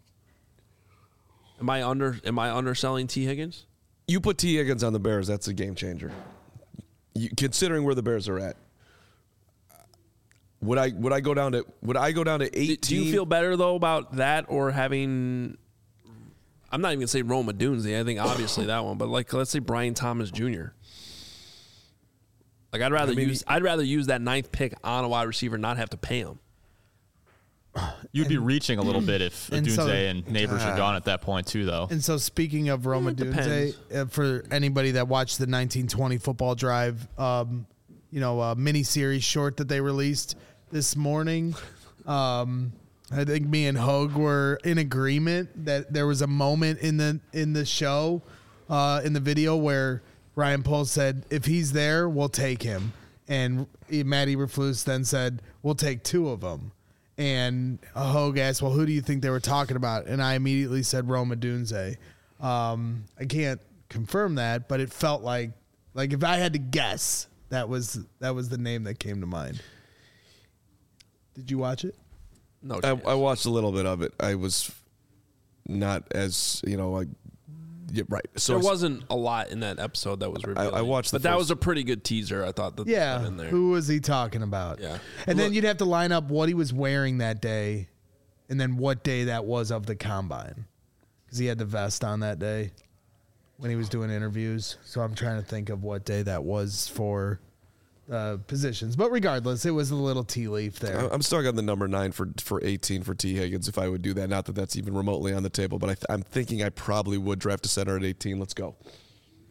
Am I under? Am I underselling T. Higgins? You put T. Higgins on the Bears, that's a game changer. You, considering where the Bears are at, would I would I go down to would I go down to Do, eighteen? do you feel better though about that or having? I'm not even gonna say Roma Dunze. I think obviously that one, but like let's say Brian Thomas Junior Like I'd rather I mean, use I'd rather use that ninth pick on a wide receiver, and not have to pay him. You'd be reaching a little bit if and Dunze so- and Neighbors are gone at that point, too, though. And so, speaking of Roma it Dunze, depends. uh, for anybody that watched the nineteen twenty football drive, um, you know, uh, mini series short that they released this morning, um, I think me and Hogue were in agreement that there was a moment in the in the show, uh, in the video where Ryan Poles said, "If he's there, we'll take him," and Matty Eberflus then said, "We'll take two of them." And Hogue asked, well, who do you think they were talking about? And I immediately said Roma Dunze. Um, I can't confirm that, but it felt like, like if I had to guess, that was that was the name that came to mind. Did you watch it? No, I, chance. I watched a little bit of it. I was not as you know like yeah, right. So there it's- wasn't a lot in that episode that was revealed. I watched the but that first- was a pretty good teaser. I thought that Yeah. in there. Who was he talking about? Yeah. And then Look- you'd have to line up what he was wearing that day, and then what day that was of the combine, because he had the vest on that day when he was doing interviews. So I'm trying to think of what day that was for uh, positions. But regardless, it was a little tea leaf there. I- I'm stuck on the number nine for for eighteen for T. Higgins. If I would do that, not that that's even remotely on the table, but I th- I'm thinking I probably would draft a center at eighteen. Let's go.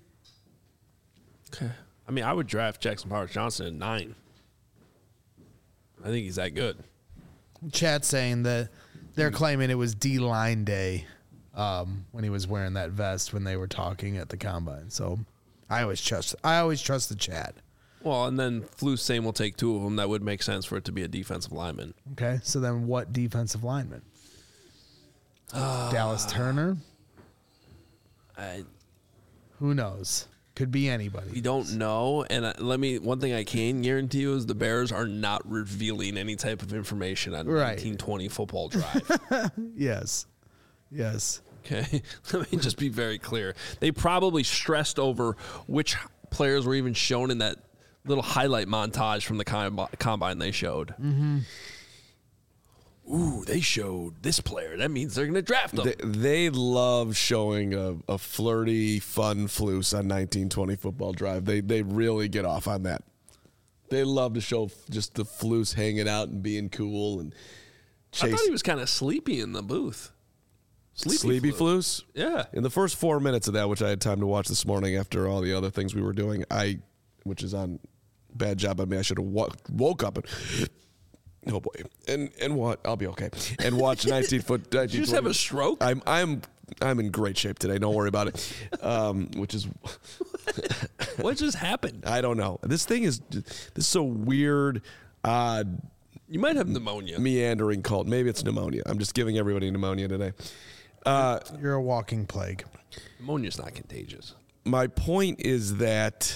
Okay. I mean, I would draft Jackson Powers Johnson at nine. I think he's that good. Chat saying that they're claiming it was D-line day um, when he was wearing that vest when they were talking at the combine. So I always trust. I always trust the chat. Well, and then Flus saying we'll take two of them. That would make sense for it to be a defensive lineman. Okay, so then what defensive lineman? Uh, Dallas Turner? I, Who knows? Could be anybody. we don't know. And uh, let me. One thing I can guarantee you is the Bears are not revealing any type of information on Right. nineteen twenty Football Drive. Yes. Yes. Okay, let me just be very clear. They probably stressed over which players were even shown in that little highlight montage from the combi- combine they showed. Mm-hmm. Ooh, they showed this player. That means they're going to draft them. They, they love showing a, a flirty, fun Flus on nineteen twenty Football Drive. They they really get off on that. They love to show just the Flus hanging out and being cool and chase. I thought he was kind of sleepy in the booth. Sleepy, Sleepy Flus. Flus? Yeah. In the first four minutes of that, which I had time to watch this morning after all the other things we were doing, I, which is on bad job on me, I should have wo- woke up and, oh boy, and and what? I'll be okay. And watch nineteen foot. Did you just have a stroke? I'm I'm I'm in great shape today. Don't worry about it. Um, which is What just happened? I don't know. This thing is this is so weird, odd, You might have pneumonia. meandering cult. Maybe it's pneumonia. I'm just giving everybody pneumonia today. Uh, You're a walking plague. Pneumonia's not contagious. my point is that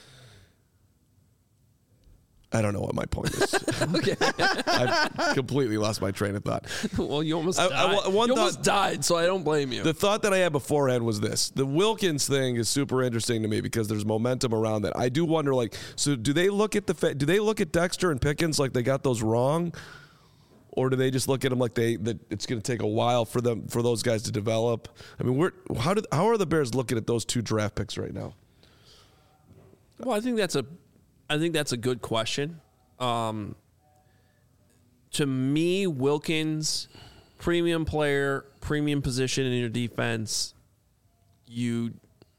I don't know what my point is. Okay. I've completely lost my train of thought. Well, you almost I- died. I- one you thought- almost died, so I don't blame you. The thought that I had beforehand was this. The Wilkins thing is super interesting to me because there's momentum around that. I do wonder, like, so do they look at the fa- do they look at Dexter and Pickens like they got those wrong? Or do they just look at them like they that it's going to take a while for them for those guys to develop? I mean, we're how did how are the Bears looking at those two draft picks right now? Well, I think that's a, I think that's a good question. Um, to me, Wilkins, premium player, premium position in your defense. You,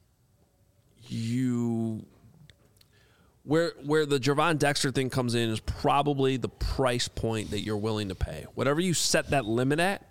you, where where the Gervon Dexter thing comes in is probably the price point that you're willing to pay. Whatever you set that limit at.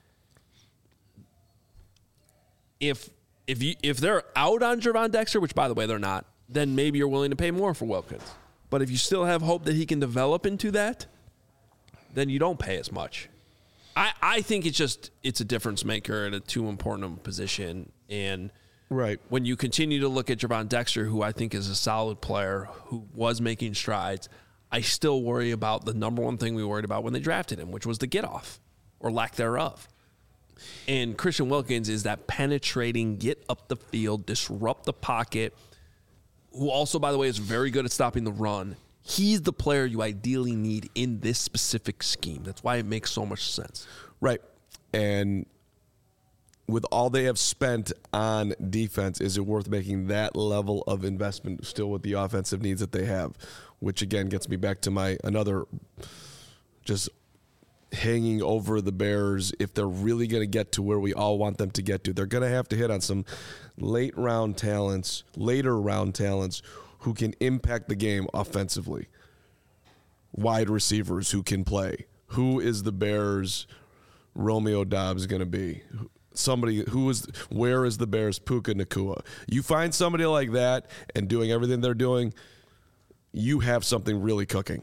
If if you if they're out on Gervon Dexter, which by the way they're not, then maybe you're willing to pay more for Wilkins. But if you still have hope that he can develop into that, then you don't pay as much. I, I think it's just it's a difference maker at a too important of a position. And Right. when you continue to look at Gervon Dexter, who I think is a solid player, who was making strides, I still worry about the number one thing we worried about when they drafted him, which was the get off or lack thereof. And Christian Wilkins is that penetrating, get up the field, disrupt the pocket, who also, by the way, is very good at stopping the run. He's the player you ideally need in this specific scheme. That's why it makes so much sense. Right. And with all they have spent on defense, is it worth making that level of investment still with the offensive needs that they have? Which, again, gets me back to my another just hanging over the Bears. If they're really going to get to where we all want them to get to, they're going to have to hit on some late round talents, later round talents who can impact the game offensively. Wide receivers who can play. Who is the Bears' Romeo Doubs going to be? Somebody who is, where is the Bears' Puka Nacua? You find somebody like that and doing everything they're doing, you have something really cooking.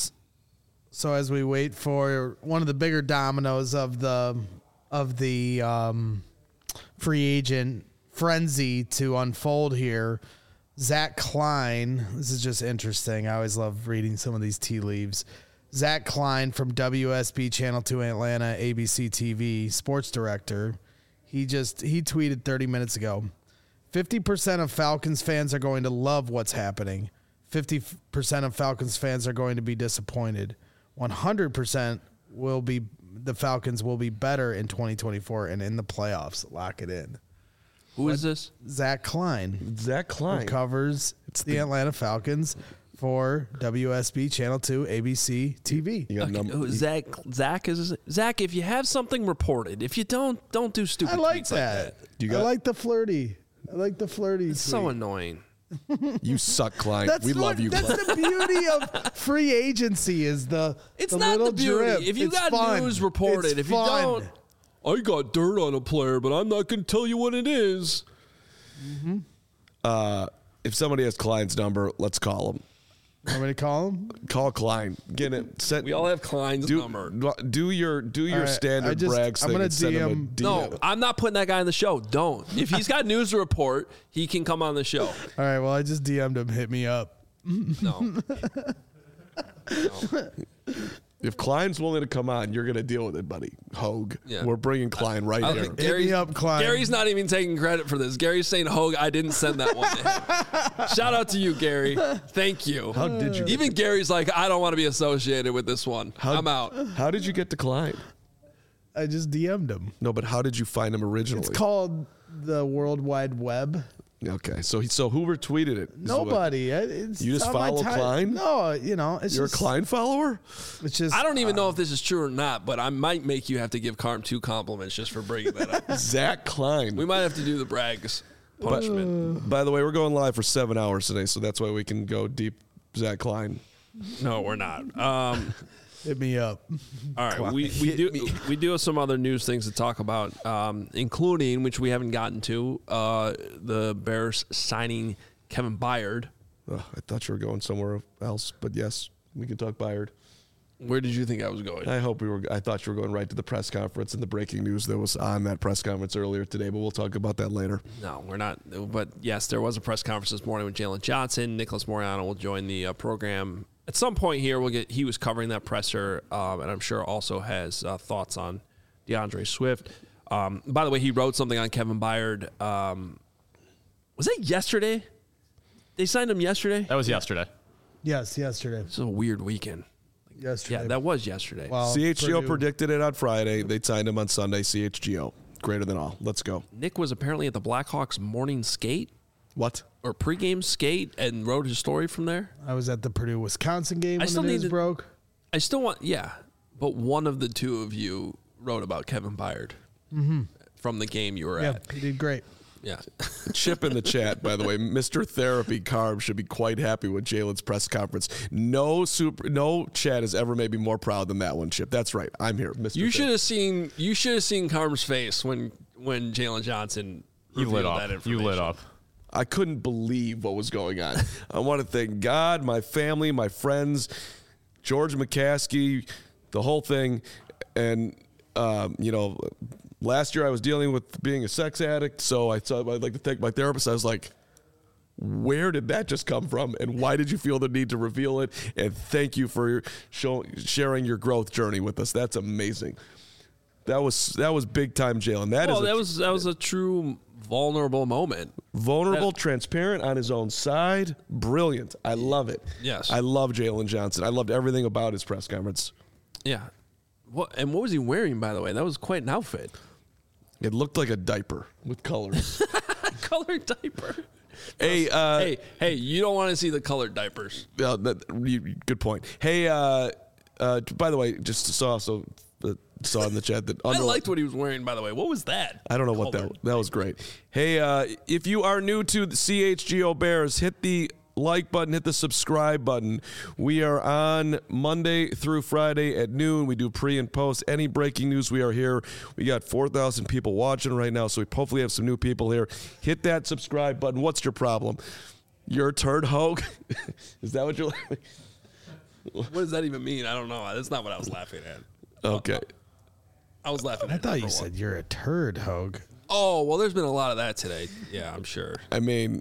So as we wait for one of the bigger dominoes of the of the um, free agent frenzy to unfold here, Zach Klein. This is just interesting. I always love reading some of these tea leaves. Zach Klein from W S B Channel two Atlanta, A B C T V sports director. He just he tweeted thirty minutes ago. fifty percent of Falcons fans are going to love what's happening. fifty percent of Falcons fans are going to be disappointed. one hundred percent will be the Falcons will be better in twenty twenty-four and in the playoffs. Lock it in. Who is this? Zach Klein. Zach Who Klein. covers the, the- Atlanta Falcons for W S B Channel two A B C T V. You got Okay, num- oh, Zach, Zach is Zach. If you have something reported, if you don't, don't do stupid. I like tweets that. Like that. You I got- like the flirty. I like the flirty. It's so annoying. You suck, Klein. That's we what, love you, That's Klein. the beauty of free agency is the It's the not little the beauty. drip. If you It's got fun. news reported, It's if you fun. don't, I got dirt on a player, but I'm not going to tell you what it is. Uh, if somebody has Klein's number, let's call him. Want me to call him? Call Klein. Get it. Set, We all have Klein's do, number. do your do your All right, standard I just- brags I'm thing gonna and send him a D M D M. No, I'm not putting that guy on the show. Don't. If he's got news to report, he can come on the show. All right. Well, I just D M'd him. Hit me up. No. No. If Klein's willing to come on, you're going to deal with it, buddy. Hogue. Yeah. We're bringing Klein right I here. think Hit Gary's, me up, Klein. Gary's not even taking credit for this. Gary's saying, Hogue, I didn't send that one to him. Shout out to you, Gary. Thank you. How did you? Even Gary's like, I don't want to be associated with this one. How, I'm out. How did you get to Klein? I just D M'd him. No, but how did you find him originally? It's called the World Wide Web. Okay, so he, so who retweeted it? Is Nobody. I- It's You just on my follow time- Klein? No, you know, it's You're just, a Klein follower? It's just I don't even know if this is true or not, but I might make you have to give Carm two compliments just for bringing that up. Zach Klein. We might have to do the brags punishment. By the way, we're going live for seven hours today, so that's why we can go deep. Zach Klein. No, we're not. Um, hit me up. all right, we, we do we do have some other news things to talk about, um, including, which we haven't gotten to, uh, the Bears signing Kevin Byard. Ugh, I thought you were going somewhere else, but yes, we can talk Byard. Where did you think I was going? I hope we were. I thought you were going right to the press conference and the breaking news that was on that press conference earlier today, but we'll talk about that later. No, we're not. But yes, there was a press conference this morning with Jalen Johnson. Nicholas Moriano will join the uh, program at some point here. We'll get. He was covering that presser, um, and I'm sure also has uh, thoughts on DeAndre Swift. Um, by the way, he wrote something on Kevin Byard. Um, was that yesterday? They signed him yesterday. That was yesterday. Yes, yesterday. This is a weird weekend. Yesterday. Yeah, that was yesterday. Well, C H G O Purdue- predicted it on Friday. They signed him on Sunday. C H G O, greater than all. Let's go. Nick was apparently at the Blackhawks morning skate What? or pregame skate and wrote his story from there. I was at the Purdue Wisconsin game I when still the need news to- broke. I still want, yeah, but one of the two of you wrote about Kevin Byard from the game you were Yeah, at. he did great. Yeah. Chip in the chat, by the way, Mister Therapy Carb should be quite happy with Jalen's press conference. No super, no chat has ever made me more proud than that one, Chip. That's right. I'm here, Mister You Ther- should have seen you should have seen Carm's face when when Jalen Johnson You lit revealed that up. You lit information. up. I couldn't believe what was going on. I want to thank God, my family, my friends, George McCaskey, the whole thing. And, um, you know, last year I was dealing with being a sex addict, so I thought I'd like to thank my therapist. I was like, where did that just come from? And why did you feel the need to reveal it? And thank you for show, sharing your growth journey with us. That's amazing. That was that was big time, Jalen. That Well, is a that was that was a true vulnerable moment. vulnerable, that- transparent on his own side. Brilliant. I love it. Yes. I love Jalen Johnson. I loved everything about his press conference. Yeah. What and what was he wearing, by the way? That was quite an outfit. It looked like a diaper with colors. Colored diaper. hey, uh, hey, hey, you don't want to see the colored diapers. uh, that, you, good point. Hey, uh, uh, by the way, just saw so uh, saw in the chat that I under- liked what he was wearing, by the way. What was that? I don't know what that Colored. that was great. Hey, uh, if you are new to the C H G O Bears, hit the like button, hit the subscribe button. We are on Monday through Friday at noon. We do pre and post. Any breaking news, we are here. We got four thousand people watching right now, so we hopefully have some new people here. Hit that subscribe button. What's your problem? You're a turd Hogue? Is that what you're laughing? What does that even mean? I don't know. That's not what I was laughing at. Okay. I was laughing at I thought you number said one. you're a turd, Hogue. Oh, well, there's been a lot of that today. Yeah, I'm sure. I mean,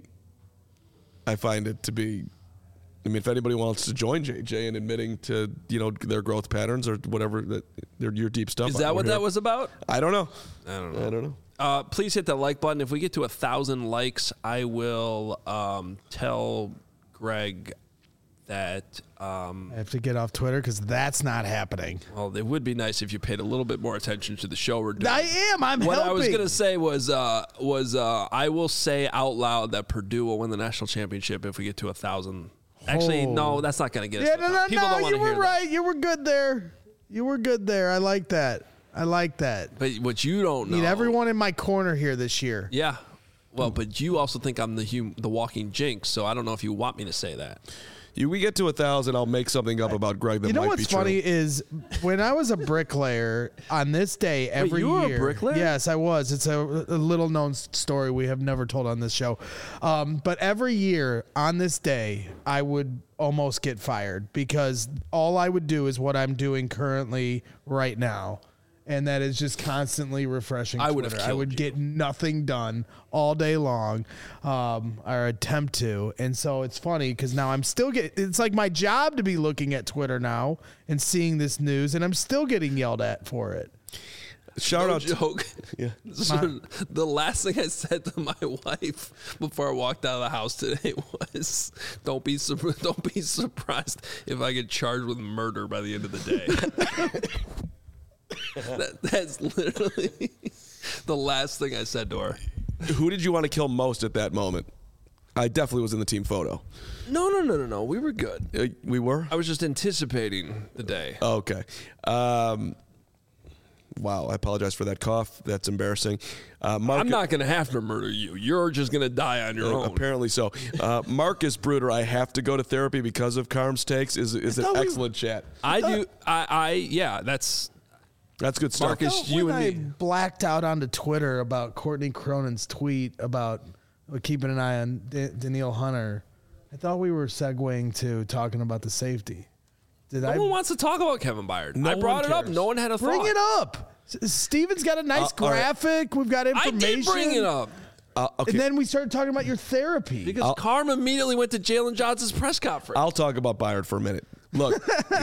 I find it to be. I mean, if anybody wants to join J J in admitting to you know their growth patterns or whatever that their your deep stuff, Is that we're what here. that was about? I don't know. I don't know. I don't know. Uh, please hit that like button. If we get to a thousand likes, I will um, tell Greg that. Um, I have to get off Twitter because that's not happening. well, it would be nice if you paid a little bit more attention to the show we're doing. I am. I'm what helping. I was gonna say was uh, was uh, I will say out loud that Purdue will win the national championship if we get to a thousand. Actually, Oh. no, that's not gonna get us. Yeah, to no, a no, thousand. People no. don't want You to were hear right. You were good there. You were good there. I like that. I like that. that. But what you don't know, Need everyone in my corner here this year. Yeah. Well, but you also think I'm the hum- the walking jinx, so I don't know if you want me to say that. You, we get to a thousand, I'll make something up about Greg that You know might what's be true. funny is when I was a bricklayer on this day every you were a year. bricklayer? Yes, I was. It's a, a little known s- story we have never told on this show. Um, but every year on this day, I would almost get fired because all I would do is what I'm doing currently right now. And that is just constantly refreshing I would have Twitter. I killed would you. get nothing done all day long, um, or attempt to. And so it's funny because now I'm still getting, it's like my job to be looking at Twitter now and seeing this news, and I'm still getting yelled at for it. Shout No out to joke. Yeah. So the last thing I said to my wife before I walked out of the house today was, "Don't be sur- don't be surprised if I get charged with murder by the end of the day." that, that's literally the last thing I said to her. who did you want to kill most at that moment? I definitely was in the team photo. No, no, no, no, no. We were good. Uh, we were? I was just anticipating the day. Okay. Um, wow, I apologize for that cough. That's embarrassing. Uh, Mark, I'm not going to have to murder you. You're just going to die on your uh, own. apparently so. Uh, Marcus Bruder, I have to go to therapy because of Carm's takes, is, is an thought we- excellent chat. I do. I, I. Yeah. That's. That's good stuff. Marcus, Well, you when and I me. blacked out onto Twitter about Courtney Cronin's tweet about keeping an eye on D- Danielle Hunter, I thought we were segueing to talking about the safety. Did No I one wants to talk about Kevin Byard. No I brought one it up. cares. No one had a bring thought. it up? S- Steven's got a nice Uh, all right. graphic. We've got I information. did bring it up Uh, okay. And then we started talking about your therapy. because Carm immediately went to Jalen Johnson's press conference. I'll talk about Byard for a minute. Look,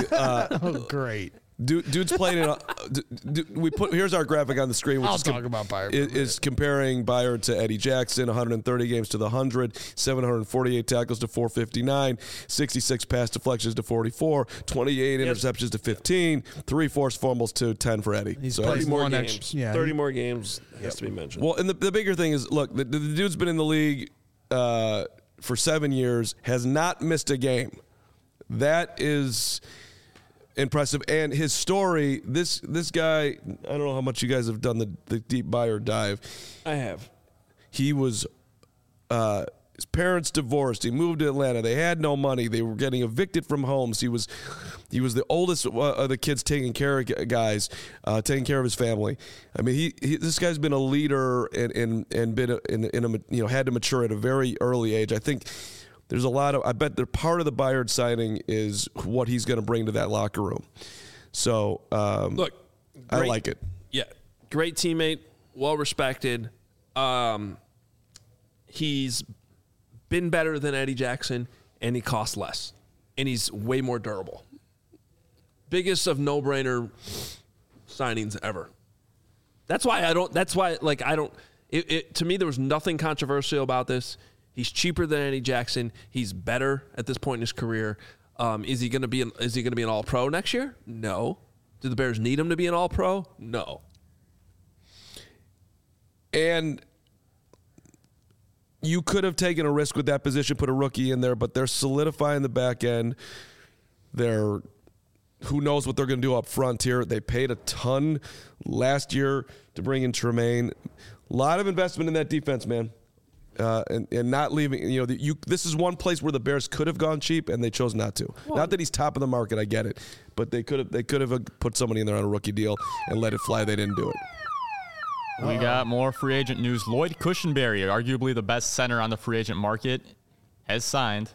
oh, great. dude, dude's playing in a, d- d- we put here's our graphic on the screen, which I'll is com- talk about Byard for a Is, is comparing Byard to Eddie Jackson, one hundred thirty games to the one hundred, seven hundred forty-eight tackles to four fifty-nine, sixty-six pass deflections to forty-four, twenty-eight interceptions to fifteen, three forced fumbles to ten for Eddie. He's So played Eddie's- more more games. games. Yeah. thirty more games has to be mentioned. well, and the, the bigger thing is, look, the, the dude's been in the league uh, for seven years, has not missed a game. That is impressive. And his story, this this guy, I don't know how much you guys have done the, the deep Byard dive. I have. He was, uh, his parents divorced. He moved to Atlanta. They had no money. They were getting evicted from homes. He was, he was the oldest of the kids taking care of guys, uh, taking care of his family. I mean, he, he this guy's been a leader and and and been a, in, in a you know had to mature at a very early age. I think there's a lot of. I bet the part of the Byard signing is what he's going to bring to that locker room. So um, Look, I great- like it. Yeah, great teammate, well respected. Um, he's been better than Eddie Jackson, and he costs less, and he's way more durable. Biggest of no-brainer signings ever. That's why I don't. That's why, like, I don't. It, it, to me, there was nothing controversial about this. He's cheaper than Eddie Jackson. He's better at this point in his career. Um, is he going to be? An, is he going to be an All-Pro next year? No. Do the Bears need him to be an All-Pro? No. And you could have taken a risk with that position, put a rookie in there, but they're solidifying the back end. They're who knows what they're going to do up front here. They paid a ton last year to bring in Tremaine. A lot of investment in that defense, man. Uh, and, and not leaving, you know, the, you. This is one place where the Bears could have gone cheap, and they chose not to. Well, not that he's top of the market, I get it, but they could have. They could have put somebody in there on a rookie deal and let it fly. They didn't do it. We got more free agent news. Lloyd Cushenberry, arguably the best center on the free agent market, has signed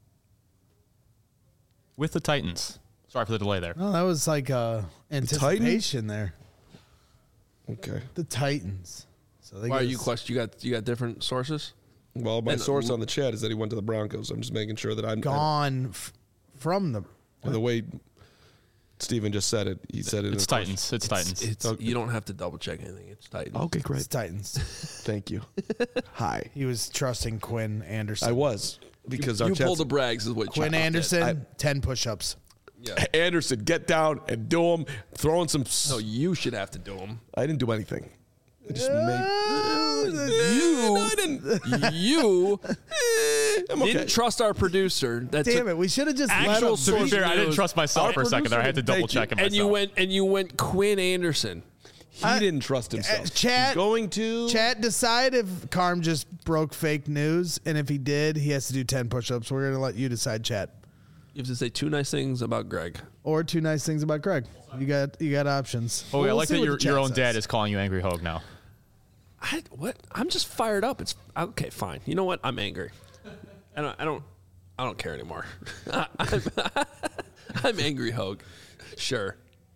with the Titans. Sorry for the delay there. Oh, that was like uh, anticipation there. Okay. The Titans. So they Why are get you us- question? You got you got different sources. Well, my And- source on the chat is that he went to the Broncos. I'm just making sure that I'm gone f- from the. And the way Steven just said it, he said it. It's in a Titans. It's Titans. It's Okay. you don't have to double check anything. It's Titans. Okay, It's great. Titans. Thank you. Hi. He was trusting Quinn Anderson. I was because you our pull chat's- the brags is what Quinn Chop Anderson, did. I- ten push-ups. Yeah. Anderson, get down and do them. Throwing some. s- No, you should have to do them. I didn't do anything. I just made. You, I didn't. you I'm okay. didn't trust our producer. That Damn took- it! We should have just let Actual him. To be source fair, I didn't news. trust myself Our for a second there. I had to producer- double check thank it and you myself. went and you went Quinn Anderson. He didn't trust himself. Uh, chat- He's going to. Chat, decide if Carm just broke fake news, and if he did, he has to do ten push-ups. We're gonna let you decide, chat. You have to say two nice things about Greg. Or two nice things about Greg. You got you got options. Oh, yeah, We'll I like see that what your, the chat your own says. dad is calling you Angry Hogue now. I what? I'm just fired up. It's okay. Fine. You know what? I'm angry. I don't. I don't. I don't care anymore. I'm, I'm angry, Hogue. Sure.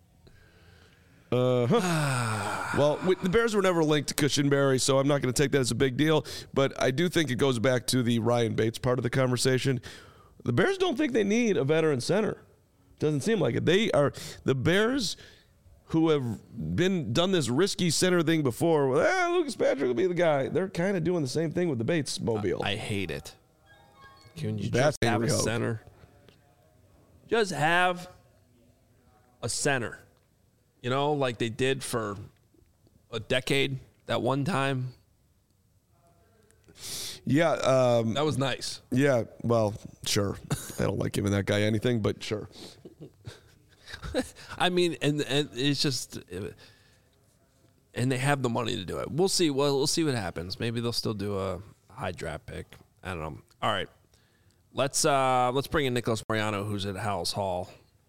Uh, huh. Well, we, the Bears were never linked to Cushenberry, so I'm not going to take that as a big deal. But I do think it goes back to the Ryan Bates part of the conversation. The Bears don't think they need a veteran center. Doesn't seem like it. They are the Bears who have been done this risky center thing before. Well, eh, Lucas Patrick will be the guy. They're kind of doing the same thing with the Bates mobile. I, I hate it. Can you That's just have a angry Hogue. center? Just have a center. You know, like they did for a decade that one time. Yeah, um, That was nice. yeah. Well, sure. I don't like giving that guy anything, but sure. I mean, and, and it's just, and they have the money to do it. We'll see. Well, we'll see what happens. Maybe they'll still do a high draft pick. I don't know. All right, let's uh, let's bring in Nicholas Mariano, who's at Howells Hall.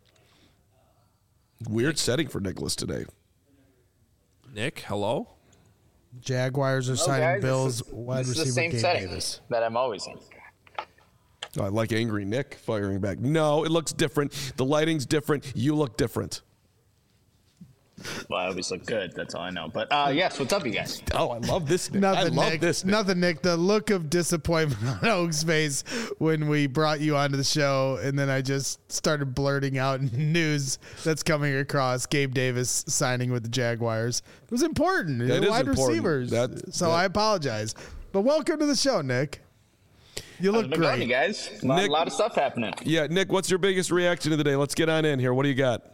Weird setting for Nicholas today. Nick, hello. Jaguars are Oh, signing guys, Bills this is, wide this is receiver the same Gabe setting Davis. that I'm always in. I like angry Nick firing back. No, it looks different. The lighting's different. You look different. Well, I always look good. That's all I know. But uh, yes, what's up, you guys? Oh, I love this Nick. Nothing, I love Nick. this Nick. Nothing, Nick. The look of disappointment on Oak's face when we brought you onto the show, and then I just started blurting out news that's coming across. Gabe Davis signing with the Jaguars. It was important. That They're is wide important. receivers. That- so that- I apologize. But welcome to the show, Nick. You How's look it been going, you great. guys? A lot, Nick- lot of stuff happening. Yeah, Nick, what's your biggest reaction of the day? Let's get on in here. What do you got?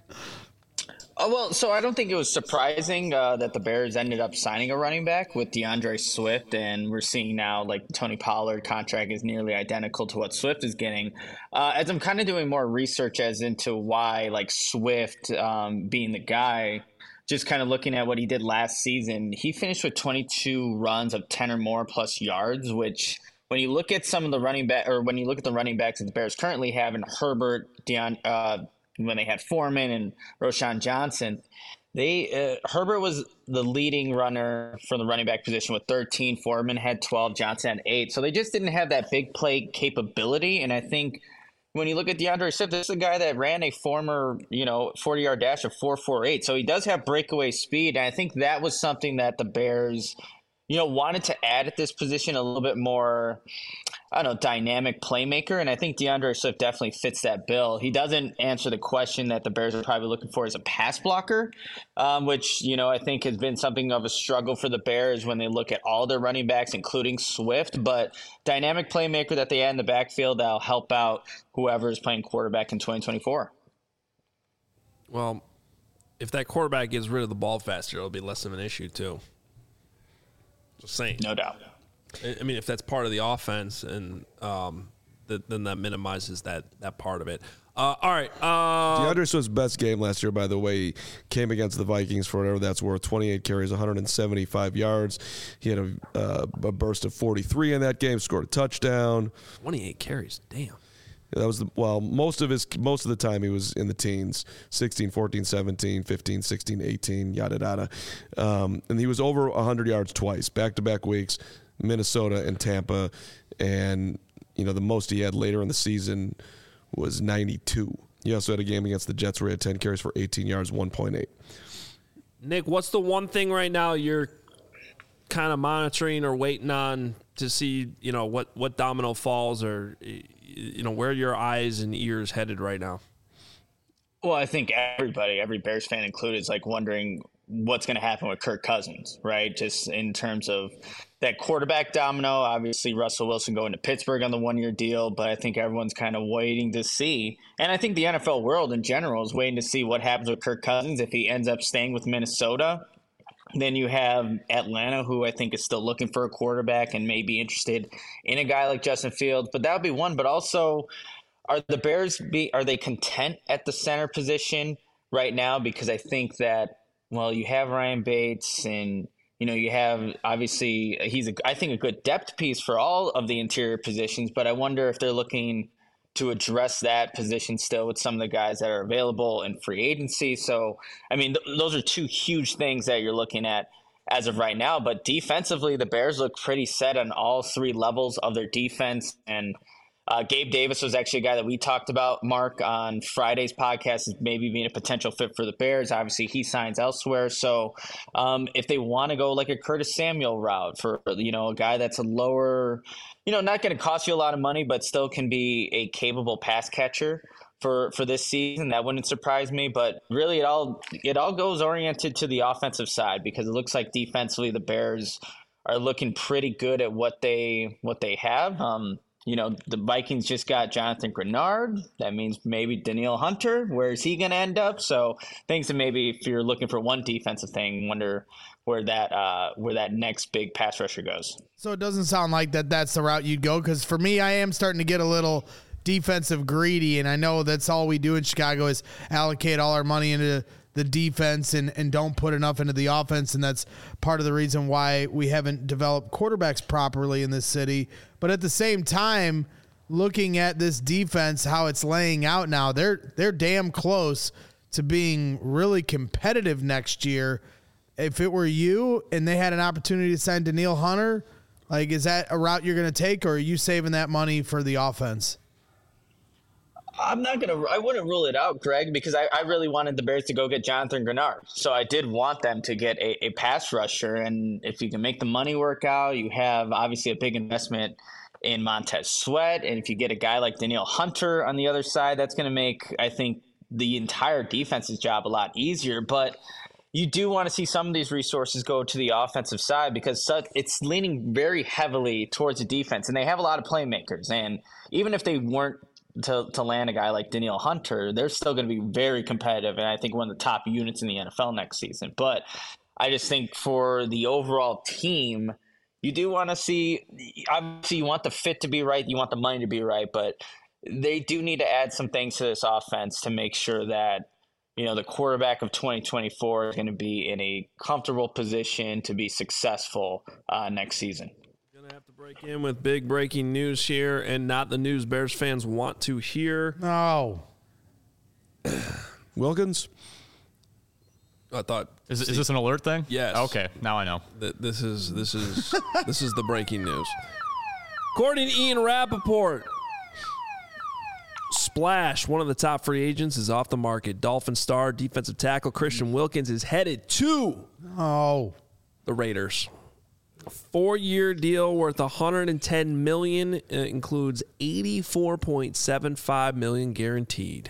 Oh, well, so I don't think it was surprising uh, that the Bears ended up signing a running back with DeAndre Swift, and we're seeing now like Tony Pollard contract is nearly identical to what Swift is getting. Uh, as I'm kind of doing more research as into why like Swift um, being the guy, just kind of looking at what he did last season, he finished with twenty-two runs of ten or more plus yards, which when you look at some of the running back or when you look at the running backs that the Bears currently have in Herbert, Deon, uh, when they had Foreman and Roshan Johnson, they uh, Herbert was the leading runner for the running back position with thirteen. Foreman had twelve. Johnson had eight. So they just didn't have that big play capability. And I think when you look at DeAndre Swift, this is a guy that ran a former, you know, forty-yard dash of four four eight. So he does have breakaway speed. And I think that was something that the Bears, you know, wanted to add at this position a little bit more, I don't know, dynamic playmaker. And I think DeAndre Swift definitely fits that bill. He doesn't answer the question that the Bears are probably looking for as a pass blocker, um, which, you know, I think has been something of a struggle for the Bears when they look at all their running backs, including Swift. But dynamic playmaker that they add in the backfield that'll help out whoever is playing quarterback in twenty twenty-four. Well, if that quarterback gets rid of the ball faster, it'll be less of an issue too. Just saying. No doubt. I mean, if that's part of the offense, and um, th- then that minimizes that that part of it. Uh, all right. Uh, DeAndre Swift's best game last year, by the way, he came against the Vikings for whatever that's worth. twenty-eight carries, one hundred seventy-five yards. He had a, uh, a burst of forty-three in that game, scored a touchdown. twenty-eight carries. Damn. That was the, well, most of his most of the time he was in the teens, sixteen, fourteen, seventeen, fifteen, sixteen, eighteen, yada yada. Um, and he was over one hundred yards twice, back-to-back weeks, Minnesota and Tampa, and you know the most he had later in the season was ninety-two. He also had a game against the Jets where he had ten carries for eighteen yards, one point eight. Nick, what's the one thing right now you're kind of monitoring or waiting on to see, you know, what, what domino falls, or, you know, where your eyes and ears headed right now? Well, I think everybody, every Bears fan included, is like wondering what's going to happen with Kirk Cousins, right? Just in terms of that quarterback domino. Obviously, Russell Wilson going to Pittsburgh on the one-year deal, but I think everyone's kind of waiting to see. And I think the N F L world in general is waiting to see what happens with Kirk Cousins if he ends up staying with Minnesota. Then you have Atlanta, who I think is still looking for a quarterback and may be interested in a guy like Justin Fields. But that would be one. But also, are the Bears be are they content at the center position right now? Because I think that, well, you have Ryan Bates and You know, you have obviously he's a, I think a good depth piece for all of the interior positions, but I wonder if they're looking to address that position still with some of the guys that are available in free agency. So, I mean, th- those are two huge things that you're looking at as of right now. But defensively, the Bears look pretty set on all three levels of their defense. And uh, Gabe Davis was actually a guy that we talked about, Mark, on Friday's podcast as maybe being a potential fit for the Bears. Obviously, he signs elsewhere. So um, if they want to go like a Curtis Samuel route for, you know, a guy that's a lower, you know, not going to cost you a lot of money, but still can be a capable pass catcher for, for this season, that wouldn't surprise me. But really, it all it all goes oriented to the offensive side, because it looks like defensively the Bears are looking pretty good at what they what they have. Um, you know, the Vikings just got Jonathan Grenard. That means maybe Danielle Hunter. Where is he going to end up? So things that maybe if you're looking for one defensive thing, wonder where that uh, where that next big pass rusher goes. So it doesn't sound like that that's the route you'd go, because for me, I am starting to get a little defensive greedy, and I know that's all we do in Chicago is allocate all our money into the defense and, and don't put enough into the offense, and that's part of the reason why we haven't developed quarterbacks properly in this city. But at the same time, looking at this defense, how it's laying out now, they're they're damn close to being really competitive next year. If it were you and they had an opportunity to sign Danielle Hunter, like, is that a route you're going to take, or are you saving that money for the offense? I'm not going to – I wouldn't rule it out, Greg, because I, I really wanted the Bears to go get Jonathan Grenard. So I did want them to get a, a pass rusher. And if you can make the money work out, you have obviously a big investment in Montez Sweat. And if you get a guy like Danielle Hunter on the other side, that's going to make, I think, the entire defense's job a lot easier. But you do want to see some of these resources go to the offensive side, because it's leaning very heavily towards the defense. And they have a lot of playmakers. And even if they weren't to, to land a guy like Danielle Hunter, they're still going to be very competitive, and I think one of the top units in the N F L next season. But I just think for the overall team, you do want to see – obviously you want the fit to be right, you want the money to be right, but they do need to add some things to this offense to make sure that, you know, the quarterback of twenty twenty-four is going to be in a comfortable position to be successful uh, next season. Gonna have to break in with big breaking news here, and not the news Bears fans want to hear. No. Wilkins? I thought Is, is this an alert thing? Yes. Okay, now I know. th- this is this is this is the breaking news. According to Ian Rappaport, Splash, one of the top free agents, is off the market. Dolphin star defensive tackle Christian Wilkins is headed to Oh. the Raiders. A four-year deal worth one hundred ten million dollars. It includes eighty-four point seven five million dollars guaranteed.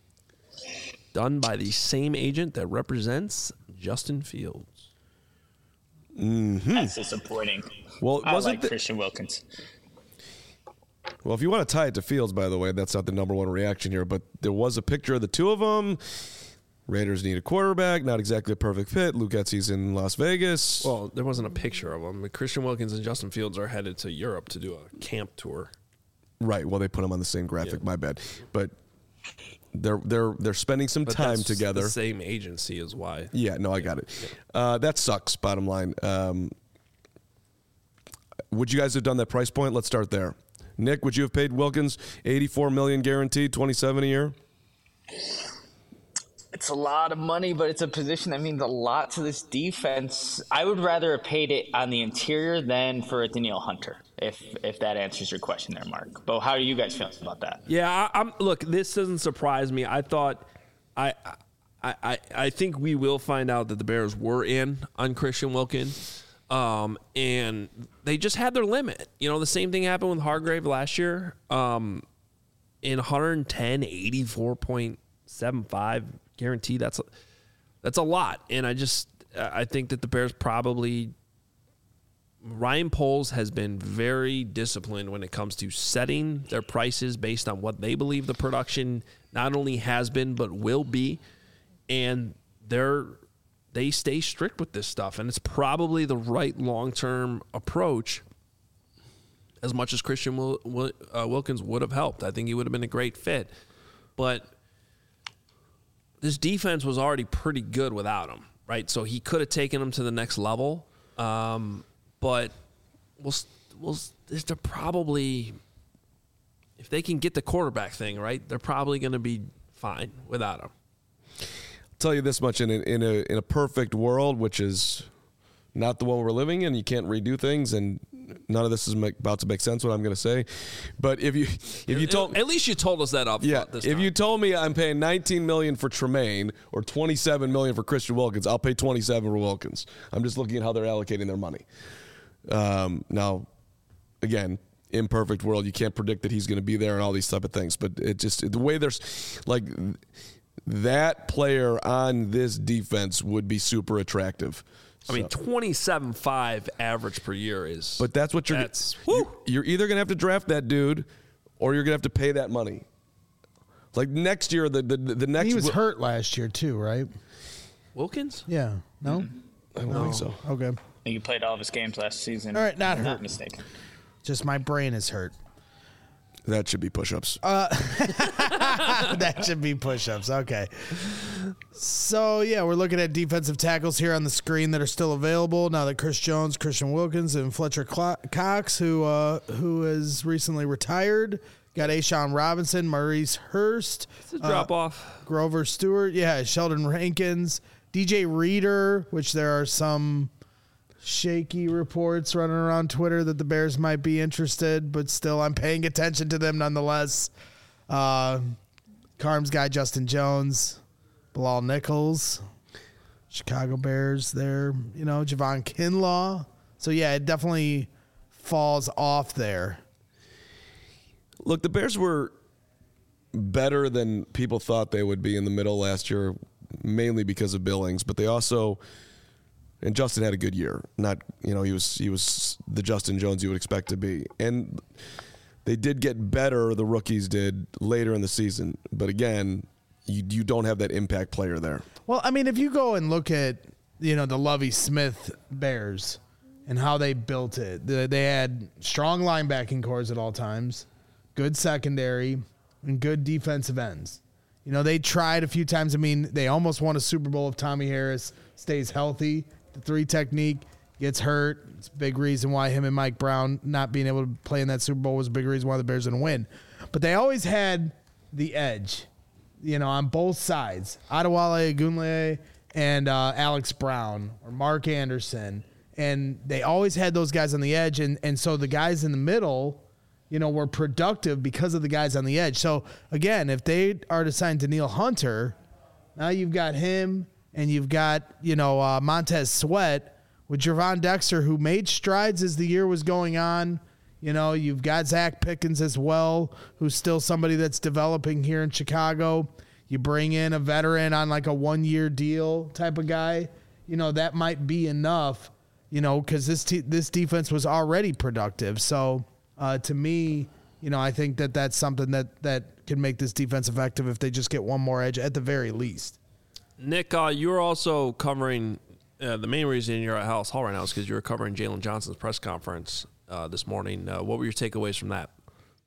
Done by the same agent that represents Justin Fields. Mm-hmm. That's disappointing. Well, I wasn't like the- Christian Wilkins. Well, if you want to tie it to Fields, by the way, that's not the number one reaction here, but there was a picture of the two of them. Raiders need a quarterback, not exactly a perfect fit. Luke Getsy's in Las Vegas. Well, there wasn't a picture of them. Christian Wilkins and Justin Fields are headed to Europe to do a camp tour. Right. Well, they put them on the same graphic. Yeah. My bad. But they're they're they're spending some But time that's together. The same agency is why. Yeah. No, I got it. Uh, that sucks. Bottom line. Um, would you guys have done that price point? Let's start there. Nick, would you have paid Wilkins eighty-four million dollars guaranteed, twenty-seven a year? It's a lot of money, but it's a position that means a lot to this defense. I would rather have paid it on the interior than for a Danielle Hunter, if if that answers your question there, Mark. But how do you guys feel about that? Yeah, I, I'm. Look, this doesn't surprise me. I thought, I, I, I, I think we will find out that the Bears were in on Christian Wilkins, um, and they just had their limit. You know, the same thing happened with Hargrave last year. Um, in one hundred ten, eighty-four point seven five guarantee. That's a, that's a lot, and I just I think that the Bears probably. Ryan Poles has been very disciplined when it comes to setting their prices based on what they believe the production not only has been but will be, and they're they stay strict with this stuff, and it's probably the right long-term approach. As much as Christian Wil- Wil- uh, Wilkins would have helped, I think he would have been a great fit, but this defense was already pretty good without him, right? So he could have taken them to the next level. Um, but we'll we'll they're probably, if they can get the quarterback thing right, they're probably going to be fine without him. I'll tell you this much: in a, in a in a perfect world, which is not the one we're living in, you can't redo things, and none of this is make, about to make sense. What I'm going to say, but if you if you told at least you told us that up yeah, front this if time. you told me I'm paying nineteen million dollars for Tremaine or twenty-seven million dollars for Christian Wilkins, I'll pay twenty-seven for Wilkins. I'm just looking at how they're allocating their money. Um, now, again, imperfect world, you can't predict that he's going to be there and all these type of things. But it just the way there's like that player on this defense would be super attractive. I mean, twenty-seven point five average per year is. But that's what you're. That's, you're, you're either going to have to draft that dude, or you're going to have to pay that money. Like next year, the the, the next. He was hurt last year too, right? Wilkins? Yeah. No. Mm-hmm. I don't no. think so. Okay. I think he played all of his games last season. All right, not hurt. Not mistaken. Just my brain is hurt. That should be push-ups. Uh, that should be push-ups. Okay. So, yeah, we're looking at defensive tackles here on the screen that are still available now that Chris Jones, Christian Wilkins, and Fletcher Cox, who uh, who has recently retired, got Ashawn Robinson, Maurice Hurst. It's a drop-off. Uh, Grover Stewart. Yeah, Sheldon Rankins. D J Reader, which there are some shaky reports running around Twitter that the Bears might be interested, but still I'm paying attention to them nonetheless. Uh, Carms guy Justin Jones, Bilal Nichols, Chicago Bears there, you know, Javon Kinlaw. So, yeah, it definitely falls off there. Look, the Bears were better than people thought they would be in the middle last year, mainly because of Billings, but they also – and Justin had a good year. Not, you know, he was he was the Justin Jones you would expect to be. And they did get better, the rookies did, later in the season. But again, you you don't have that impact player there. Well, I mean, if you go and look at, you know, the Lovie Smith Bears and how they built it, they had strong linebacking cores at all times, good secondary, and good defensive ends. You know, they tried a few times. I mean, they almost won a Super Bowl if Tommy Harris stays healthy. The three technique gets hurt. It's a big reason why him and Mike Brown not being able to play in that Super Bowl was a big reason why the Bears didn't win. But they always had the edge, you know, on both sides. Adewale Ogunleye and uh, Alex Brown or Mark Anderson. And they always had those guys on the edge. And, and so the guys in the middle, you know, were productive because of the guys on the edge. So, again, if they are to sign Danielle Hunter, now you've got him. And you've got, you know, uh, Montez Sweat with Gervon Dexter, who made strides as the year was going on. You know, you've got Zach Pickens as well, who's still somebody that's developing here in Chicago. You bring in a veteran on like a one-year deal type of guy. You know, that might be enough, you know, because this, te- this defense was already productive. So, uh, to me, you know, I think that that's something that, that can make this defense effective if they just get one more edge at the very least. Nick, uh, you're also covering uh, the main reason you're at Hallis Hall right now is because you were covering Jalen Johnson's press conference uh, this morning. Uh, what were your takeaways from that?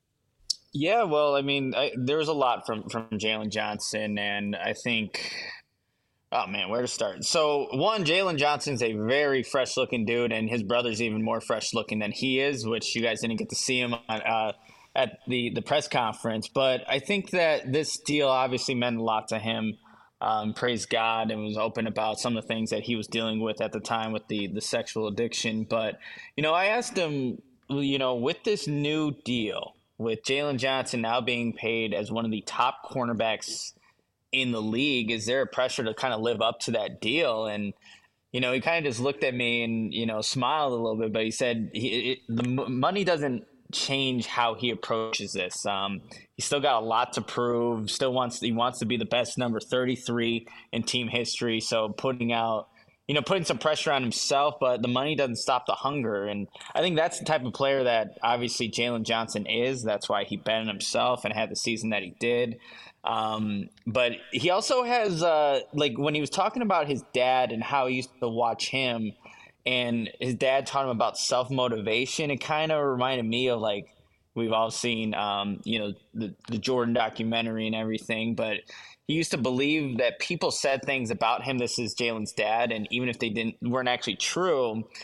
Yeah, well, I mean, I, there was a lot from, from Jalen Johnson, and I think, oh, man, where to start? So, one, Jalen Johnson's a very fresh-looking dude, and his brother's even more fresh-looking than he is, which you guys didn't get to see him on, uh, at the, the press conference. But I think that this deal obviously meant a lot to him. Um, praise God, and was open about some of the things that he was dealing with at the time with the, the sexual addiction. But, you know, I asked him, you know, with this new deal, with Jalen Johnson now being paid as one of the top cornerbacks in the league, is there a pressure to kind of live up to that deal? And, you know, he kind of just looked at me and, you know, smiled a little bit, but he said he, it, the money doesn't change how he approaches this. Um, he's still got a lot to prove. Still wants he wants to be the best number thirty-three in team history. So putting out, you know, putting some pressure on himself, but the money doesn't stop the hunger. And I think that's the type of player that obviously Jalen Johnson is. That's why he bet on himself and had the season that he did. Um, but he also has, uh, like when he was talking about his dad and how he used to watch him, and his dad taught him about self-motivation, it kind of reminded me of, like, we've all seen, um, you know, the, the Jordan documentary and everything, but he used to believe that people said things about him. This is Jalen's dad. And even if they didn't, weren't actually true,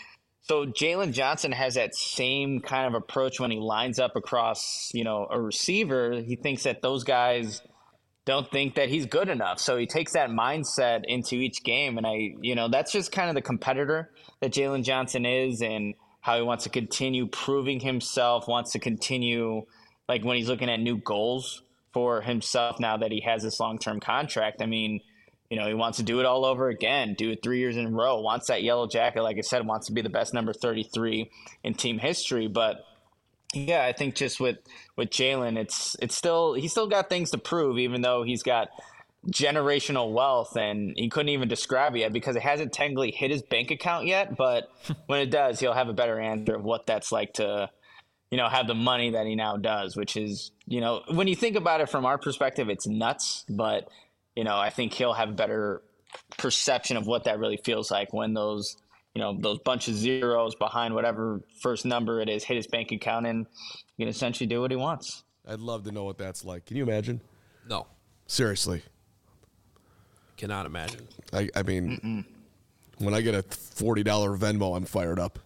So Jalen Johnson has that same kind of approach when he lines up across, you know, a receiver. He thinks that those guys don't think that he's good enough. So he takes that mindset into each game. And I, you know, that's just kind of the competitor that Jalen Johnson is, and how he wants to continue proving himself, wants to continue, like when he's looking at new goals for himself now that he has this long-term contract. I mean, you know, he wants to do it all over again, do it three years in a row, wants that yellow jacket. Like I said, wants to be the best number thirty-three in team history. But yeah, I think just with, with Jalen, it's, it's still, he's still got things to prove, even though he's got generational wealth, and he couldn't even describe it yet because it hasn't technically hit his bank account yet. But when it does, he'll have a better answer of what that's like to, you know, have the money that he now does, which is, you know, when you think about it from our perspective, it's nuts. But you know, I think he'll have a better perception of what that really feels like when those, you know, those bunch of zeros behind whatever first number it is hit his bank account, and he can essentially do what he wants. I'd love to know what that's like. Can you imagine? No, Seriously. cannot imagine. I, I mean, Mm-mm. when I get a forty dollars Venmo, I'm fired up.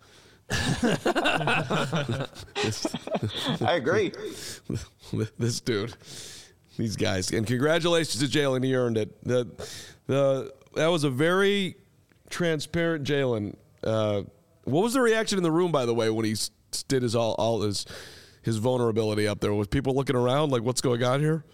this, I agree. This dude. These guys. And congratulations to Jalen. He earned it. The, the, that was a very transparent Jalen. Uh, what was the reaction in the room, by the way, when he did his all, all his his vulnerability up there? Was people looking around like, what's going on here?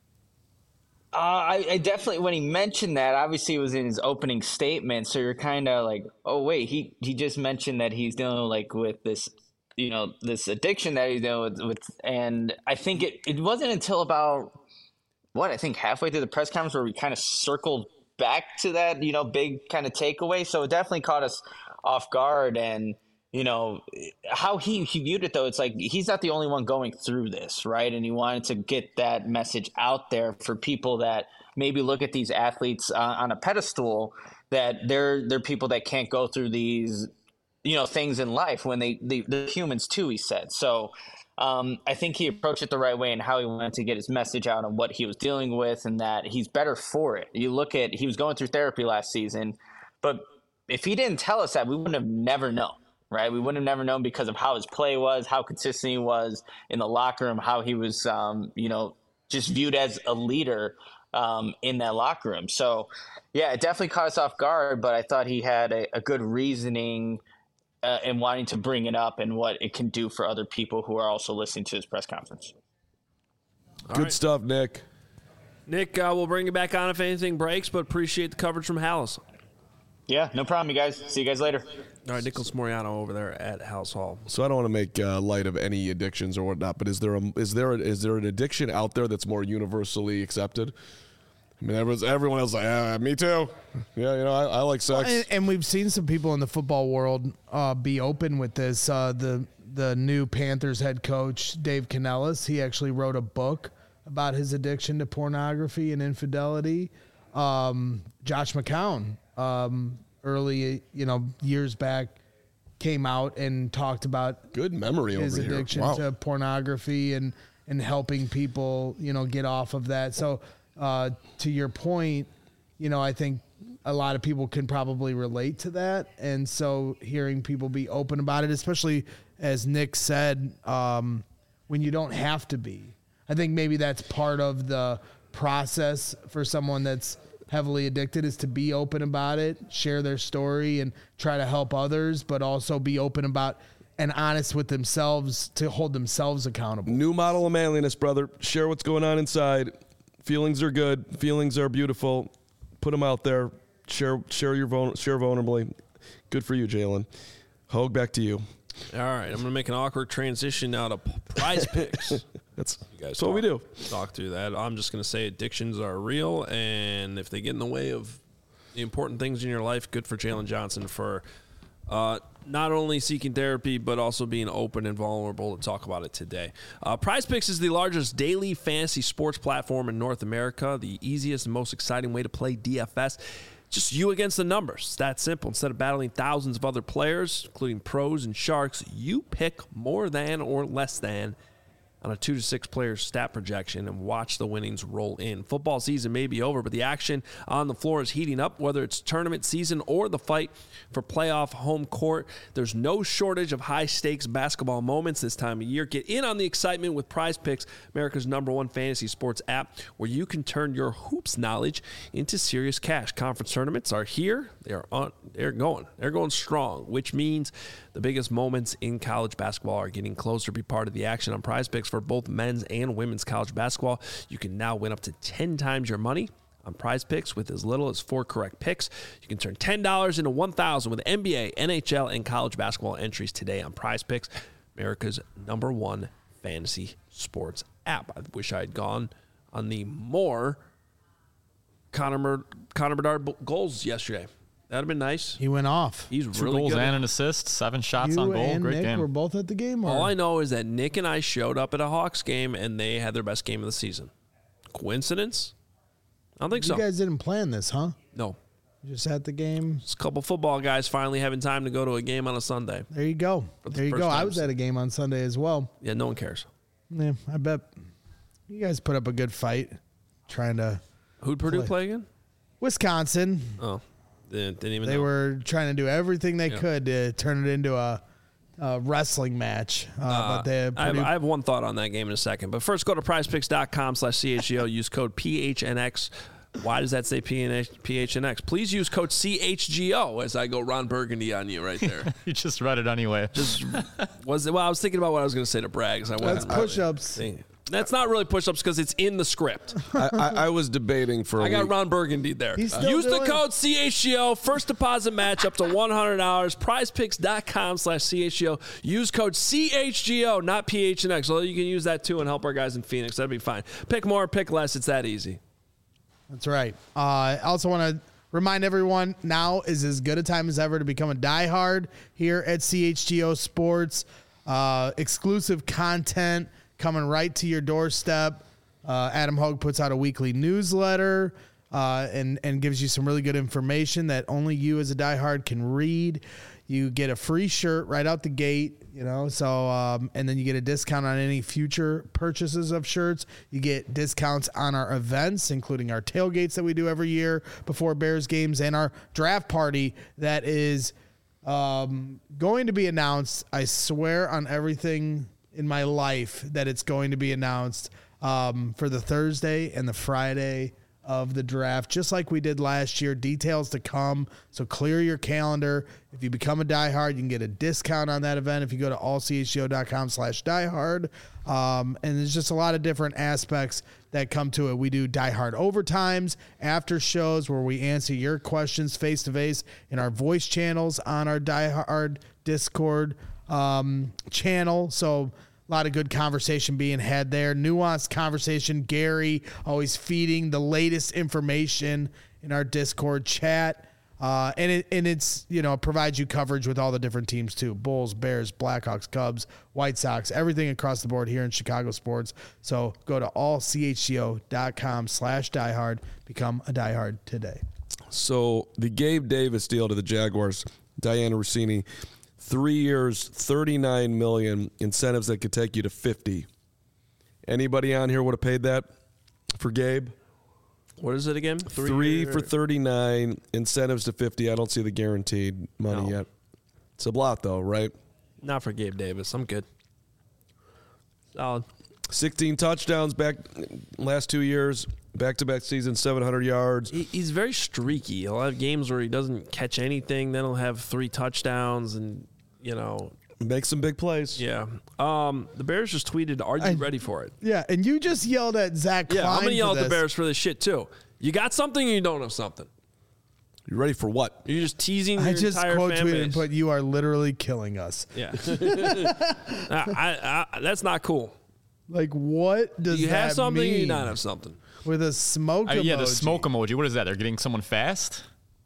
Uh, I, I definitely, when he mentioned that, obviously it was in his opening statement. So you're kind of like, oh, wait, he, he just mentioned that he's dealing like with this, you know, this addiction that he's dealing with. with and I think it, it wasn't until about, what, I think halfway through the press conference where we kind of circled back to that, you know, big kind of takeaway. So it definitely caught us off guard. And, you know, how he, he viewed it, though, it's like he's not the only one going through this, right? And he wanted to get that message out there for people that maybe look at these athletes uh, on a pedestal, that they're, they're people that can't go through these, you know, things in life when they, they they're humans too, he said. So um, I think he approached it the right way and how he wanted to get his message out on what he was dealing with, and that he's better for it. You look at, he was going through therapy last season, but if he didn't tell us that, we wouldn't have never known, right? We wouldn't have never known because of how his play was, how consistent he was in the locker room, how he was, um, you know, just viewed as a leader um, in that locker room. So yeah, it definitely caught us off guard, but I thought he had a, a good reasoning Uh, and wanting to bring it up and what it can do for other people who are also listening to his press conference. All Good right. stuff, Nick. Nick, uh, we'll bring you back on if anything breaks, but appreciate the coverage from Halas. Yeah, no problem, you guys. See you guys later. All right, Nicholas Moriano over there at Halas Hall. So I don't want to make uh, light of any addictions or whatnot, but is there a, is there a, is there an addiction out there that's more universally accepted? I mean, everyone's, everyone else is like, ah, me too. Yeah, you know, I, I like sex. Well, and, and we've seen some people in the football world uh, be open with this. Uh, the the new Panthers head coach, Dave Canellis, he actually wrote a book about his addiction to pornography and infidelity. Um, Josh McCown, um, early, you know, years back, came out and talked about good memory his over addiction here. Wow. to pornography and, and helping people, you know, get off of that. So, Uh, to your point, you know, I think a lot of people can probably relate to that. And so hearing people be open about it, especially as Nick said, um, when you don't have to be, I think maybe that's part of the process for someone that's heavily addicted, is to be open about it, share their story and try to help others, but also be open about and honest with themselves to hold themselves accountable. New model of manliness, brother. Share what's going on inside. Feelings are good. Feelings are beautiful. Put them out there. Share, share your vul- share vulnerably. Good for you, Jalen. Hogue, back to you. All right, I'm going to make an awkward transition now to Prize Picks. that's you guys that's talk, what we do. Talk through that. I'm just going to say addictions are real, and if they get in the way of the important things in your life, good for Jalen Johnson for uh, not only seeking therapy, but also being open and vulnerable to talk about it today. Uh, Prize Picks is the largest daily fantasy sports platform in North America, the easiest and most exciting way to play D F S. Just you against the numbers. It's that simple. Instead of battling thousands of other players, including pros and sharks, you pick more than or less than on a two to six player stat projection and watch the winnings roll in. Football season may be over, but the action on the floor is heating up, whether it's tournament season or the fight for playoff home court. There's no shortage of high-stakes basketball moments this time of year. Get in on the excitement with Prize Picks, America's number one fantasy sports app, where you can turn your hoops knowledge into serious cash. Conference tournaments are here. They are on. They're going. They're going strong, which means the biggest moments in college basketball are getting closer to be part of the action on Prize Picks for both men's and women's college basketball. You can now win up to ten times your money on Prize Picks with as little as four correct picks. You can turn ten dollars into one thousand dollars with N B A, N H L, and college basketball entries today on Prize Picks, America's number one fantasy sports app. I wish I had gone on the more Connor, Mur- Connor Bedard goals yesterday. That'd have been nice. He went off. He's Two really goals good. and an assist, seven shots You on goal. and Great Nick game. were both at the game. Or? All I know is that Nick and I showed up at a Hawks game and they had their best game of the season. Coincidence? I don't think you so. guys didn't plan this, huh? No. Just at the game. It's a couple football guys finally having time to go to a game on a Sunday. There you go. the There you first go. I time was since- at a game on Sunday as well. Yeah, no one cares. Yeah, I bet you guys put up a good fight trying to. Who'd Purdue Play. play again? Wisconsin. Oh, didn't, didn't even They know. were trying to do everything they Yeah. could to turn it into a, a wrestling match. Uh, Uh, but they I, have, Purdue, I have one thought on that game in a second. But first, go to prizepicks.com slash CHGO. Use code P H N X. Why does that say P H N X? Please use code C H G O as I go Ron Burgundy on you right there. You just read it anyway. Just was it, well, I was thinking about what I was going to say to Braggs. I that's wasn't really push-ups. thinking. That's not really push-ups because it's in the script. I, I, I was debating for a I got week. Ron Burgundy there. He's still Use the doing- code C H G O. First deposit match up to one hundred dollars. prizepicks.com slash CHGO. Use code C H G O, not P H N X. Although you can use that too and help our guys in Phoenix. That'd be fine. Pick more, pick less. It's that easy. That's right. Uh, I also want to remind everyone now is as good a time as ever to become a diehard here at C H G O Sports. Uh, exclusive content coming right to your doorstep. Uh, Adam Hogue puts out a weekly newsletter uh, and, and gives you some really good information that only you as a diehard can read. You get a free shirt right out the gate, you know, so, um, and then you get a discount on any future purchases of shirts. You get discounts on our events, including our tailgates that we do every year before Bears games and our draft party that is um, going to be announced. I swear on everything in my life that it's going to be announced um, for the Thursday and the Friday of the draft, just like we did last year. Details to come, so clear your calendar. If you become a diehard, you can get a discount on that event if you go to allchgo.com slash diehard. Um, and there's just a lot of different aspects that come to it. We do diehard overtimes, after shows where we answer your questions face to face in our voice channels on our diehard Discord um, channel. So a lot of good conversation being had there. Nuanced conversation. Gary always feeding the latest information in our Discord chat. Uh, and it and it's, you know, provides you coverage with all the different teams too. Bulls, Bears, Blackhawks, Cubs, White Sox, everything across the board here in Chicago sports. So go to allchgo.com slash diehard. Become a diehard today. So the Gabe Davis deal to the Jaguars, Diana Rossini, three years, thirty-nine million dollars, incentives that could take you to fifty. Anybody on here would have paid that for Gabe? What is it again? Three, Three year- for thirty-nine, incentives to fifty. I don't see the guaranteed money No. yet. It's a lot, though, right? Not for Gabe Davis. I'm good. Solid. sixteen touchdowns back last two years, back-to-back season, seven hundred yards. He, he's very streaky. He'll have games where he doesn't catch anything. Then he'll have three touchdowns and, you know, Make some big plays. yeah. Um, the Bears just tweeted, "Are you I- ready for it?" Yeah, and you just yelled at Zach Klein. Yeah, I'm gonna yell for at the this. Bears for this shit too. You got something, or you don't have something. You ready for what? You're just teasing your I just entire quote fan tweeted base. and put, "You are literally killing us." Yeah, I, I, that's not cool. Like, what does You that have something, mean? or you not have something. With a smoke Uh, emoji. yeah, the smoke emoji. What is that? They're getting someone fast?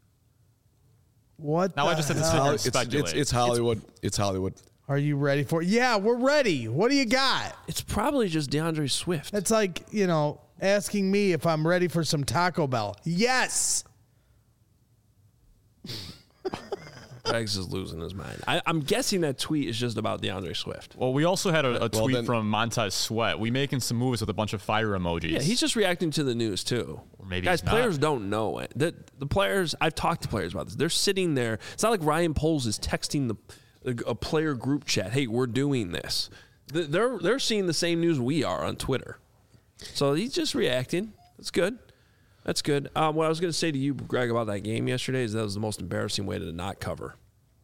What Now the I just have to hell? sit here and It's, it's, speculate. it's Hollywood. It's Hollywood. Are you ready for it? Yeah, we're ready. What do you got? It's probably just DeAndre Swift. It's like, you know, asking me if I'm ready for some Taco Bell. Yes. Greg's is losing his mind. I, I'm guessing that tweet is just about DeAndre Swift. Well, we also had a, a Well, tweet then- from Montez Sweat. We making some moves with a bunch of fire emojis. Yeah, he's just reacting to the news too. Or maybe Guys, he's not. players don't know it. The, the players, I've talked to players about this. They're sitting there. It's not like Ryan Poles is texting the a, a player group chat. Hey, we're doing this. They're they're seeing the same news we are on Twitter. So he's just reacting. That's good. That's good. Um, what I was going to say to you, Greg, about that game yesterday is that was the most embarrassing way to not cover.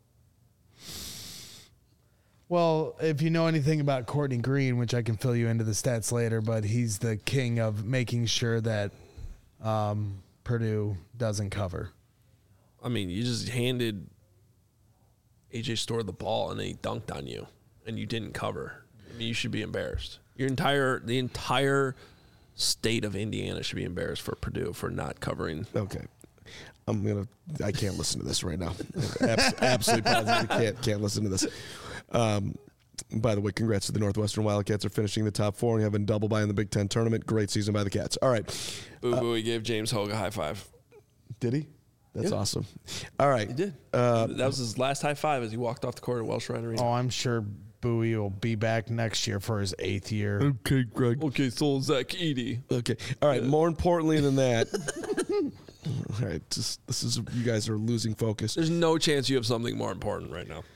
Well, if you know anything about Courtney Green, which I can fill you into the stats later, but he's the king of making sure that um, Purdue doesn't cover. I mean, you just handed A J Storr the ball and he dunked on you, and you didn't cover. I mean, you should be embarrassed. Your entire the entire state of Indiana should be embarrassed for Purdue for not covering. Okay. I'm gonna. I can't listen to this right now. Abs- absolutely positive. Can't can't listen to this. Um, by the way, congrats to the Northwestern Wildcats are finishing the top four and having double bye in the Big Ten tournament. Great season by the Cats. All right. Boo boo, he gave James Hogue a high five. Did he? That's Yeah. awesome. All right. He did. Uh, that was his last high five as he walked off the court at Welsh Ryan Arena. Oh, I'm sure Bowie will be back next year for his eighth year. Okay, Greg. Okay, so Zach Edey. Okay. All right. More importantly than that. All right. Just this is you guys are losing focus. There's no chance you have something more important right now.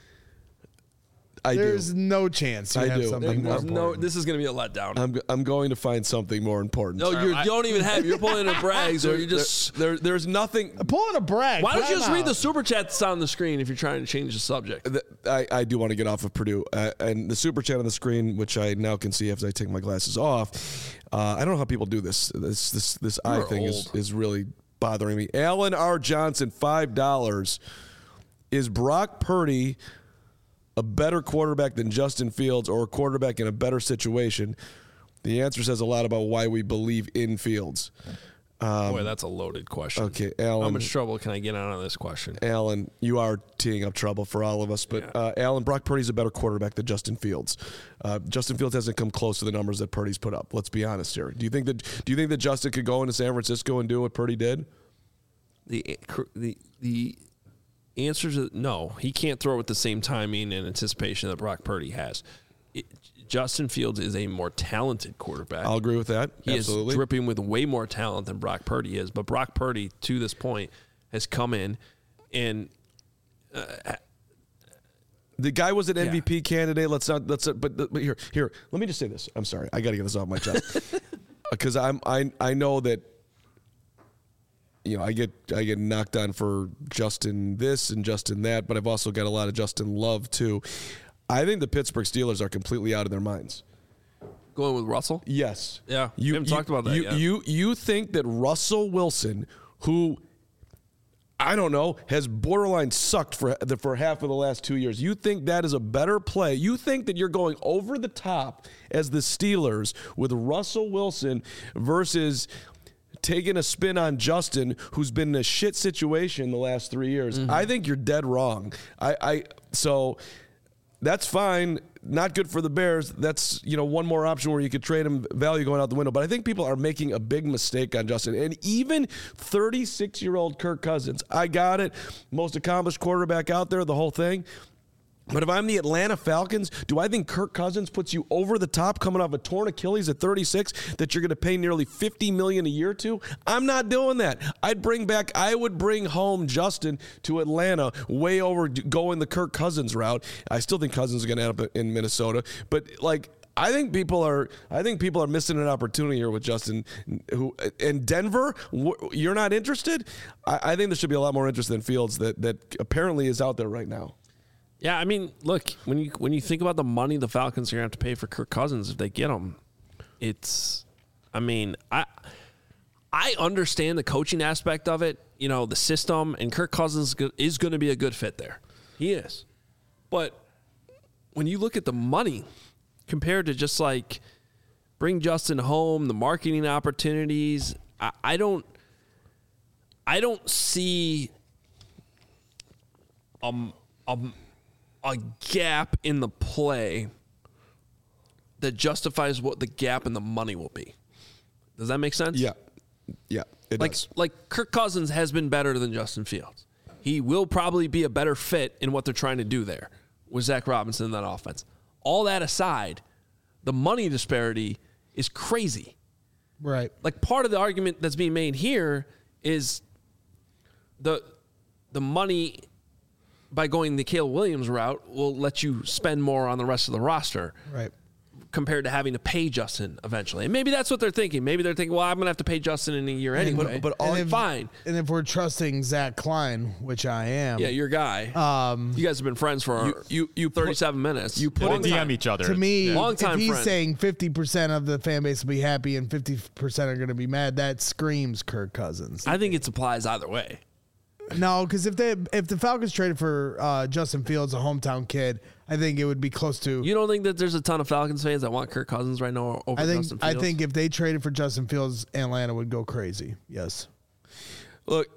I There's do. no chance you I have do. something more There's no. important. This is going to be a letdown. I'm I'm going to find something more important. no, you're, I- you don't even have. You're pulling a brags, or you just. there, there's nothing. Pulling a brag. Why don't you Time just read out. the super chat that's on the screen if you're trying to change the subject? Th- I, I do want to get off of Purdue. Uh, and the super chat on the screen, which I now can see as I take my glasses off. Uh, I don't know how people do this. This this this eye You're thing is, old. is really bothering me. Alan R. Johnson, five dollars. Is Brock Purdy a better quarterback than Justin Fields or a quarterback in a better situation? The answer says a lot about why we believe in Fields. Boy, that's a loaded question. Okay, How Alan. much trouble can I get out of this question? Alan, you are teeing up trouble for all of us, but Yeah. uh, Alan, Brock Purdy's a better quarterback than Justin Fields. Uh, Justin Fields hasn't come close to the numbers that Purdy's put up. Let's be honest here. Do you think that? Do you think that Justin could go into San Francisco and do what Purdy did? The the the answer to no, he can't throw with the same timing and anticipation that Brock Purdy has. It, Justin Fields is a more talented quarterback. I'll agree with that. He Absolutely. is dripping with way more talent than Brock Purdy is. But Brock Purdy, to this point, has come in and The guy was an Yeah. M V P candidate. Let's not. Let's. But, but here, here. Let me just say this. I'm sorry. I got to get this off my chest because I'm. I. I know that. You know, I get. I get knocked on for Justin this and Justin that, but I've also got a lot of Justin love too. I think the Pittsburgh Steelers are completely out of their minds. going with Russell. Yes. Yeah, we haven't talked about that you, yet. You you think that Russell Wilson, who I don't know, has borderline sucked for the, for half of the last two years. You think that is a better play? You think that you're going over the top as the Steelers with Russell Wilson versus taking a spin on Justin, who's been in a shit situation the last three years? Mm-hmm. I think you're dead wrong. I, I so. That's fine. Not good for the Bears. That's, you know, one more option where you could trade him, value going out the window. But I think people are making a big mistake on Justin. And even thirty-six-year-old Kirk Cousins, I got it. Most accomplished quarterback out there, the whole thing. But if I'm the Atlanta Falcons, do I think Kirk Cousins puts you over the top coming off a torn Achilles at thirty-six that you're going to pay nearly fifty million dollars a year to? I'm not doing that. I'd bring back, I would bring home Justin to Atlanta way over going the Kirk Cousins route. I still think Cousins is going to end up in Minnesota. But, like, I think people are. I think people are missing an opportunity here with Justin. Who in Denver? You're not interested? I, I think there should be a lot more interest than Fields that that apparently is out there right now. Yeah, I mean, look, when you when you think about the money the Falcons are going to have to pay for Kirk Cousins if they get him, it's, I mean, I I understand the coaching aspect of it, you know, the system, and Kirk Cousins is going to be a good fit there. He is. But when you look at the money compared to just like bring Justin home, the marketing opportunities, I, I don't I don't see um um. a gap in the play that justifies what the gap in the money will be. Does that make sense? Yeah, yeah, it Like does. like Kirk Cousins has been better than Justin Fields. He will probably be a better fit in what they're trying to do there with Zach Robinson in that offense. All that aside, the money disparity is crazy. Right. Like, part of the argument that's being made here is the the money by going the Caleb Williams route will let you spend more on the rest of the roster. Right. Compared to having to pay Justin eventually. And maybe that's what they're thinking. Maybe they're thinking, well, I'm going to have to pay Justin in a year anyway. But, but all, And if- fine. And if we're trusting Zach Klein, which I am, Yeah, your guy. um, You guys have been friends for You- you- you put- thirty-seven minutes. you put They Long D M time. each other. to me, Yeah. Long if time he's friend. saying fifty percent of the fan base will be happy and fifty percent are going to be mad, that screams Kirk Cousins. I think it applies either way. No, because if they if the Falcons traded for uh, Justin Fields, a hometown kid, I think it would be close to. You don't think that there's a ton of Falcons fans that want Kirk Cousins right now over I think Justin I Fields? think if they traded for Justin Fields, Atlanta would go crazy. Yes. Look,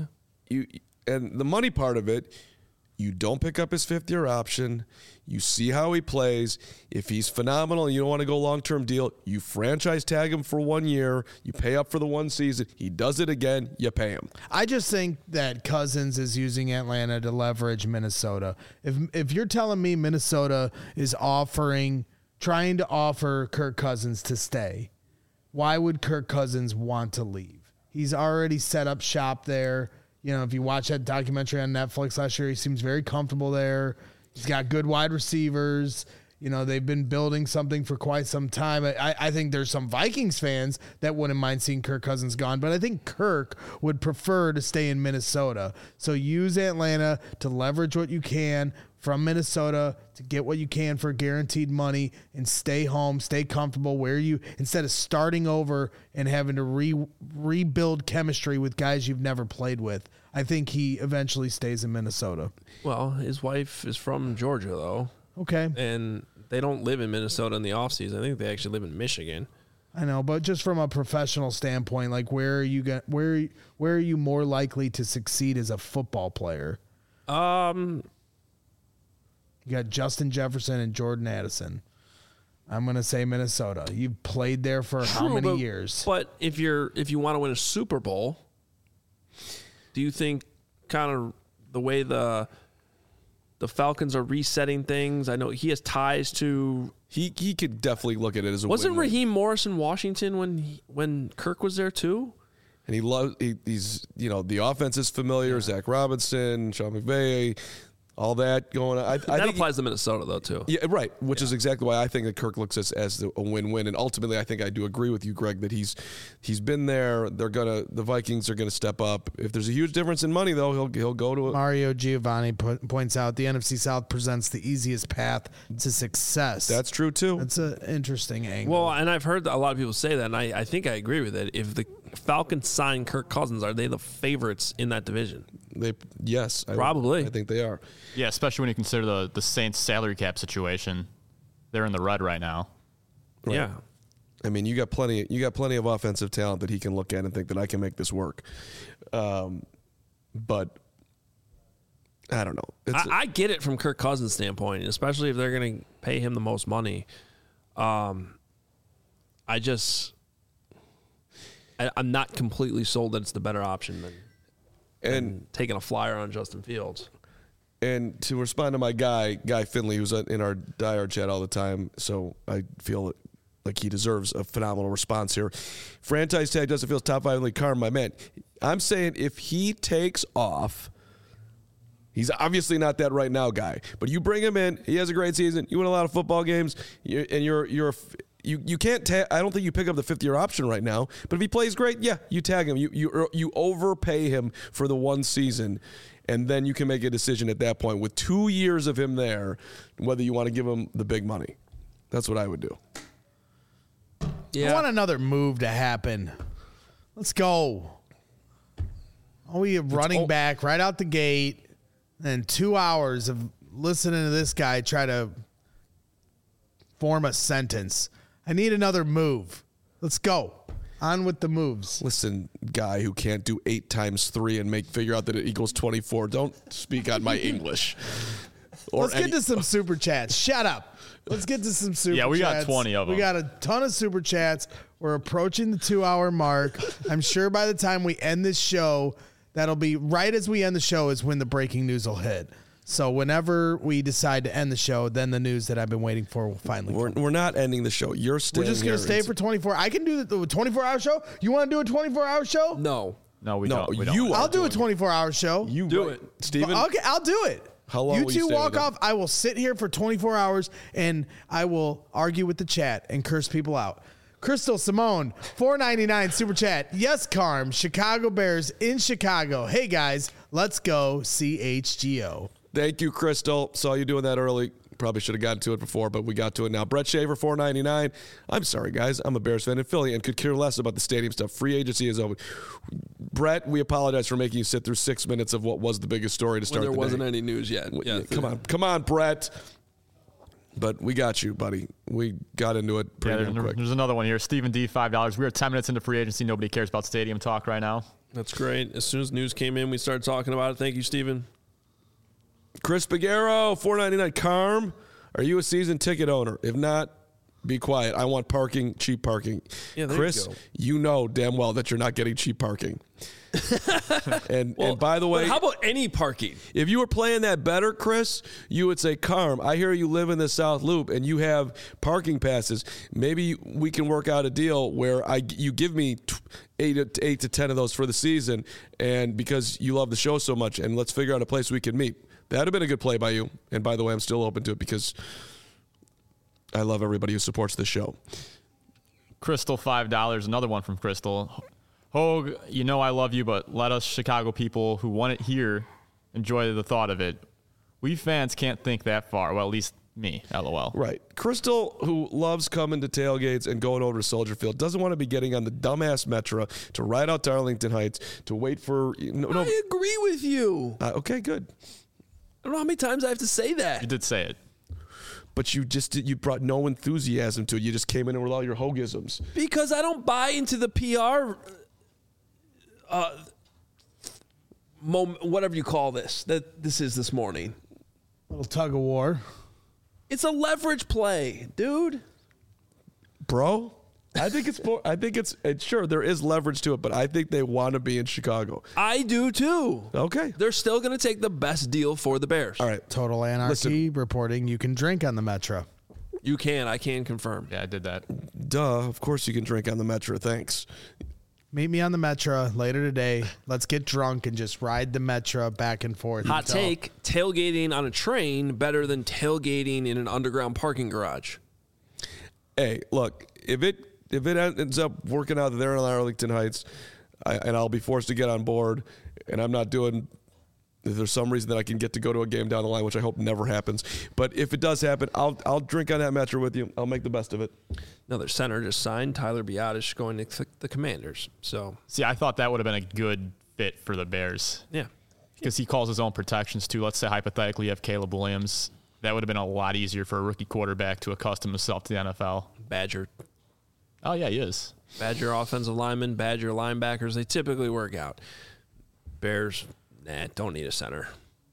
you and the money part of it, you don't pick up his fifth year option. You see how he plays. If he's phenomenal and you don't want to go long-term deal, you franchise tag him for one year. You pay up for the one season. He does it again, you pay him. I just think that Cousins is using Atlanta to leverage Minnesota. If if you're telling me Minnesota is offering, trying to offer Kirk Cousins to stay, why would Kirk Cousins want to leave? He's already set up shop there. You know, if you watch that documentary on Netflix last year, he seems very comfortable there. He's got good wide receivers. You know, they've been building something for quite some time. I, I think there's some Vikings fans that wouldn't mind seeing Kirk Cousins gone, but I think Kirk would prefer to stay in Minnesota. So use Atlanta to leverage what you can from Minnesota to get what you can for guaranteed money and stay home, stay comfortable where you, instead of starting over and having to re, rebuild chemistry with guys you've never played with. I think he eventually stays in Minnesota. Well, his wife is from Georgia, though, Okay. and they don't live in Minnesota in the offseason. I think they actually live in Michigan. I know, but just from a professional standpoint, like where are you going, where where are you more likely to succeed as a football player? Um, You got Justin Jefferson and Jordan Addison. I'm going to say Minnesota. You've played there for how true, many but, years? But if you're if you want to win a Super Bowl, do you think kind of the way the the Falcons are resetting things? I know he has ties to. He he could definitely look at it as a Wasn't win-win. Raheem Morris in Washington when he, when Kirk was there too? And he loves he, he's you know the offense is familiar. Zach Robinson, Sean McVay, all that going on. I, I That think applies to Minnesota though too. Yeah, right. Which is exactly why I think that Kirk looks as, as a win-win, and ultimately, I think I do agree with you, Greg, that he's he's been there. They're gonna the Vikings are gonna step up. If there's a huge difference in money, though, he'll he'll go to a, Mario Giovanni put, points out the N F C South presents the easiest path to success. That's true too. That's an interesting angle. Well, and I've heard a lot of people say that, and I, I think I agree with it. If the Falcons sign Kirk Cousins, are they the favorites in that division? They yes, I, Probably. I think they are. Yeah, especially when you consider the, the Saints salary cap situation. They're in the red right now. Right. Yeah. I mean, you got plenty. You got plenty of offensive talent that he can look at and think that I can make this work. Um, but I don't know. It's, I, I get it from Kirk Cousins' standpoint, especially if they're going to pay him the most money. Um, I just, I, I'm not completely sold that it's the better option than, and than taking a flyer on Justin Fields. And to respond to my guy, Guy Finley, who's in our diehard chat all the time, so I feel like he deserves a phenomenal response here. Franchise tag doesn't feel top five in the league. Carm, my man. I'm saying if he takes off, he's obviously not that right now guy, but you bring him in, he has a great season, you win a lot of football games, you're, and you're you're you you can't. Ta- I don't think you pick up the fifth year option right now. But if he plays great, yeah, you tag him. You you you overpay him for the one season. And then you can make a decision at that point with two years of him there, whether you want to give him the big money. That's what I would do. Yeah. I want another move to happen. Let's go. Are we running oh. back right out the gate, and two hours of listening to this guy try to form a sentence. I need another move. Let's go. On with the moves. Listen, guy who can't do eight times three and make figure out that it equals twenty-four. Don't speak on my English. Or Let's any- get to some super chats. Shut up. Let's get to some super chats. Yeah, we got twenty of We them. got a ton of super chats. We're approaching the two hour mark. I'm sure by the time we end this show, That'll be right as we end the show is when the breaking news will hit. So whenever we decide to end the show, then the news that I've been waiting for will finally We're, come. we're not ending the show. You're staying We're just going to stay for twenty-four. I can do the twenty-four hour show. You want to do a twenty-four hour show? No. No, we No, don't. We don't. you I'll are do a doing twenty-four hour show. You Do right. it. Steven? Okay, I'll do it. How long You will you two stay walk with them? off. I will sit here for twenty-four hours and I will argue with the chat and curse people out. Crystal Simone, four ninety-nine super chat. Yes, Carm, Chicago Bears in Chicago. Hey guys, let's go C H G O. Thank you, Crystal. Saw you doing that early. Probably should have gotten to it before, but we got to it now. Brett Shaver, four ninety-nine. I'm sorry, guys. I'm a Bears fan in Philly and could care less about the stadium stuff. Free agency is over. Brett, we apologize for making you sit through six minutes of what was the biggest story to start When there the wasn't day. any news yet. Yeah, Yeah, come on. Come on, Brett. But we got you, buddy. We got into it Yeah, pretty there's, damn quick. there's another one here. Stephen D, five dollars. We are ten minutes into free agency. Nobody cares about stadium talk right now. That's great. As soon as news came in, we started talking about it. Thank you, Steven. Chris Pagero, four ninety-nine. Carm, are you a season ticket owner? If not, be quiet. I want parking, cheap parking. Yeah, there Chris, you go. you know damn well that you're not getting cheap parking. and Well, and by the way, but how about any parking? if you were playing that better, Chris, you would say, Carm, I hear you live in the South Loop and you have parking passes. Maybe we can work out a deal where I you give me t- eight, to, eight to ten of those for the season, and because you love the show so much, and let's figure out a place we can meet. That would have been a good play by you. And by the way, I'm still open to it because I love everybody who supports this show. Crystal, five dollars. Another one from Crystal. Hogue, you know I love you, but let us Chicago people who want it here enjoy the thought of it. We fans can't think that far. Well, at least me, LOL. Right. Crystal, who loves coming to tailgates and going over to Soldier Field, doesn't want to be getting on the dumbass Metro to ride out to Arlington Heights to wait for... No, no. I agree with you. Uh, okay, good. I don't know how many times I have to say You that. did say it. But you just you brought no enthusiasm to it. You just came in with all your Hogisms. Because I don't buy into the P R, uh, moment, whatever you call this, that this is this morning. Little tug of war. It's a leverage play, dude. Bro, I think it's more, I think it's, it's sure there is leverage to it, but I think they want to be in Chicago. I do too. Okay. They're still going to take the best deal for the Bears. All right. Total Anarchy reporting you can drink on the Metro. You can. I can confirm. Yeah, I did that. Duh. Of course you can drink on the Metro. Thanks. Meet me on the Metro later today. Let's get drunk and just ride the Metro back and forth. Hot until- take, tailgating on a train better than tailgating in an underground parking garage. Hey, look, if it if it ends up working out that they're in Arlington Heights, I, and I'll be forced to get on board, and I'm not doing. If there's some reason that I can get to go to a game down the line, which I hope never happens, but if it does happen, I'll I'll drink on that Metro with you. I'll make the best of it. Another center just signed, Tyler Biadasz, going to th- the Commanders. So, See, I thought that would have been a good fit for the Bears yeah. because he calls his own protections too. Let's say hypothetically you have Caleb Williams. That would have been a lot easier for a rookie quarterback to accustom himself to the N F L. Badger. Oh, yeah, he is. Badger offensive linemen, Badger linebackers, they typically work out. Bears, nah, don't need a center.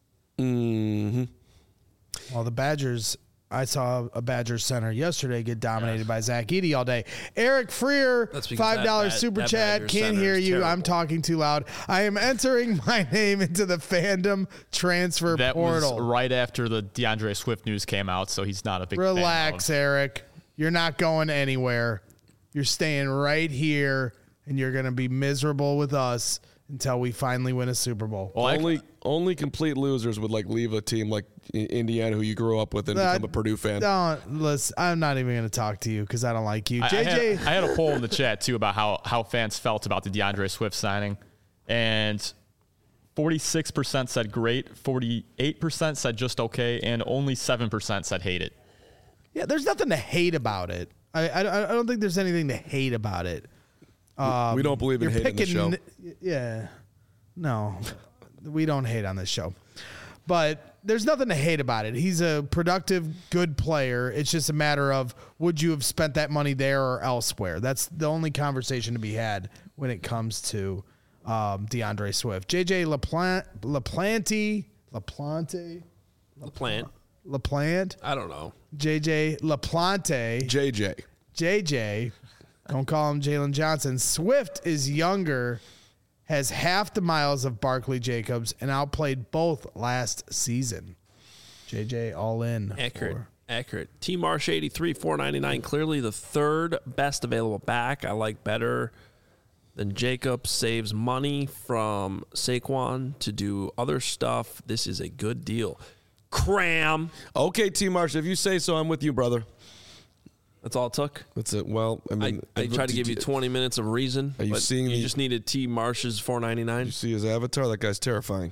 Mm-hmm. Well, the Badgers, I saw a Badgers center yesterday get dominated by Zach Edey all day. Eric Freer, That's because five dollars that Bad- super that chat. Badgers Can't center hear is you. I'm terrible. talking too loud. I am entering my name into the fandom transfer That portal. was right after the DeAndre Swift news came out, so he's not a big Relax, fan of. Eric. You're not going anywhere. You're staying right here, and you're going to be miserable with us until we finally win a Super Bowl. Well, I- Only only complete losers would like leave a team like I- Indiana, who you grew up with, and Uh, become a Purdue fan. Don't listen. I'm not even going to talk to you because I don't like you, I, J I J. had, I had a poll in the chat too about how, how fans felt about the DeAndre Swift signing, and forty-six percent said great, forty-eight percent said just okay, and only seven percent said hate it. Yeah, there's nothing to hate about it. I, I, I don't think there's anything to hate about it. Um, we don't believe in you're hating the show. picking- Yeah, no, we don't hate on this show. But there's nothing to hate about it. He's a productive, good player. It's just a matter of would you have spent that money there or elsewhere? That's the only conversation to be had when it comes to um, DeAndre Swift. J J LaPlante, LaPlante, LaPlante, LaPlante. LaPlante, I don't know. J J LaPlante, J J. J J. Don't call him Jalen Johnson. Swift is younger. has half the miles of Barkley Jacobs and outplayed both last season. J J all in. Accurate. For- Accurate. T Marsh eighty-three, four ninety-nine. Clearly the third best available back. I like better than Jacobs. Saves money from Saquon to do other stuff. This is a good deal. Cram. Okay, T. Marsh, if you say so, I'm with you, brother. That's all it took. That's it. Well, I mean, I, I tried to give you twenty minutes of reason. Are you but seeing You the- just needed T Marsh's four ninety-nine. You see his avatar? That guy's terrifying.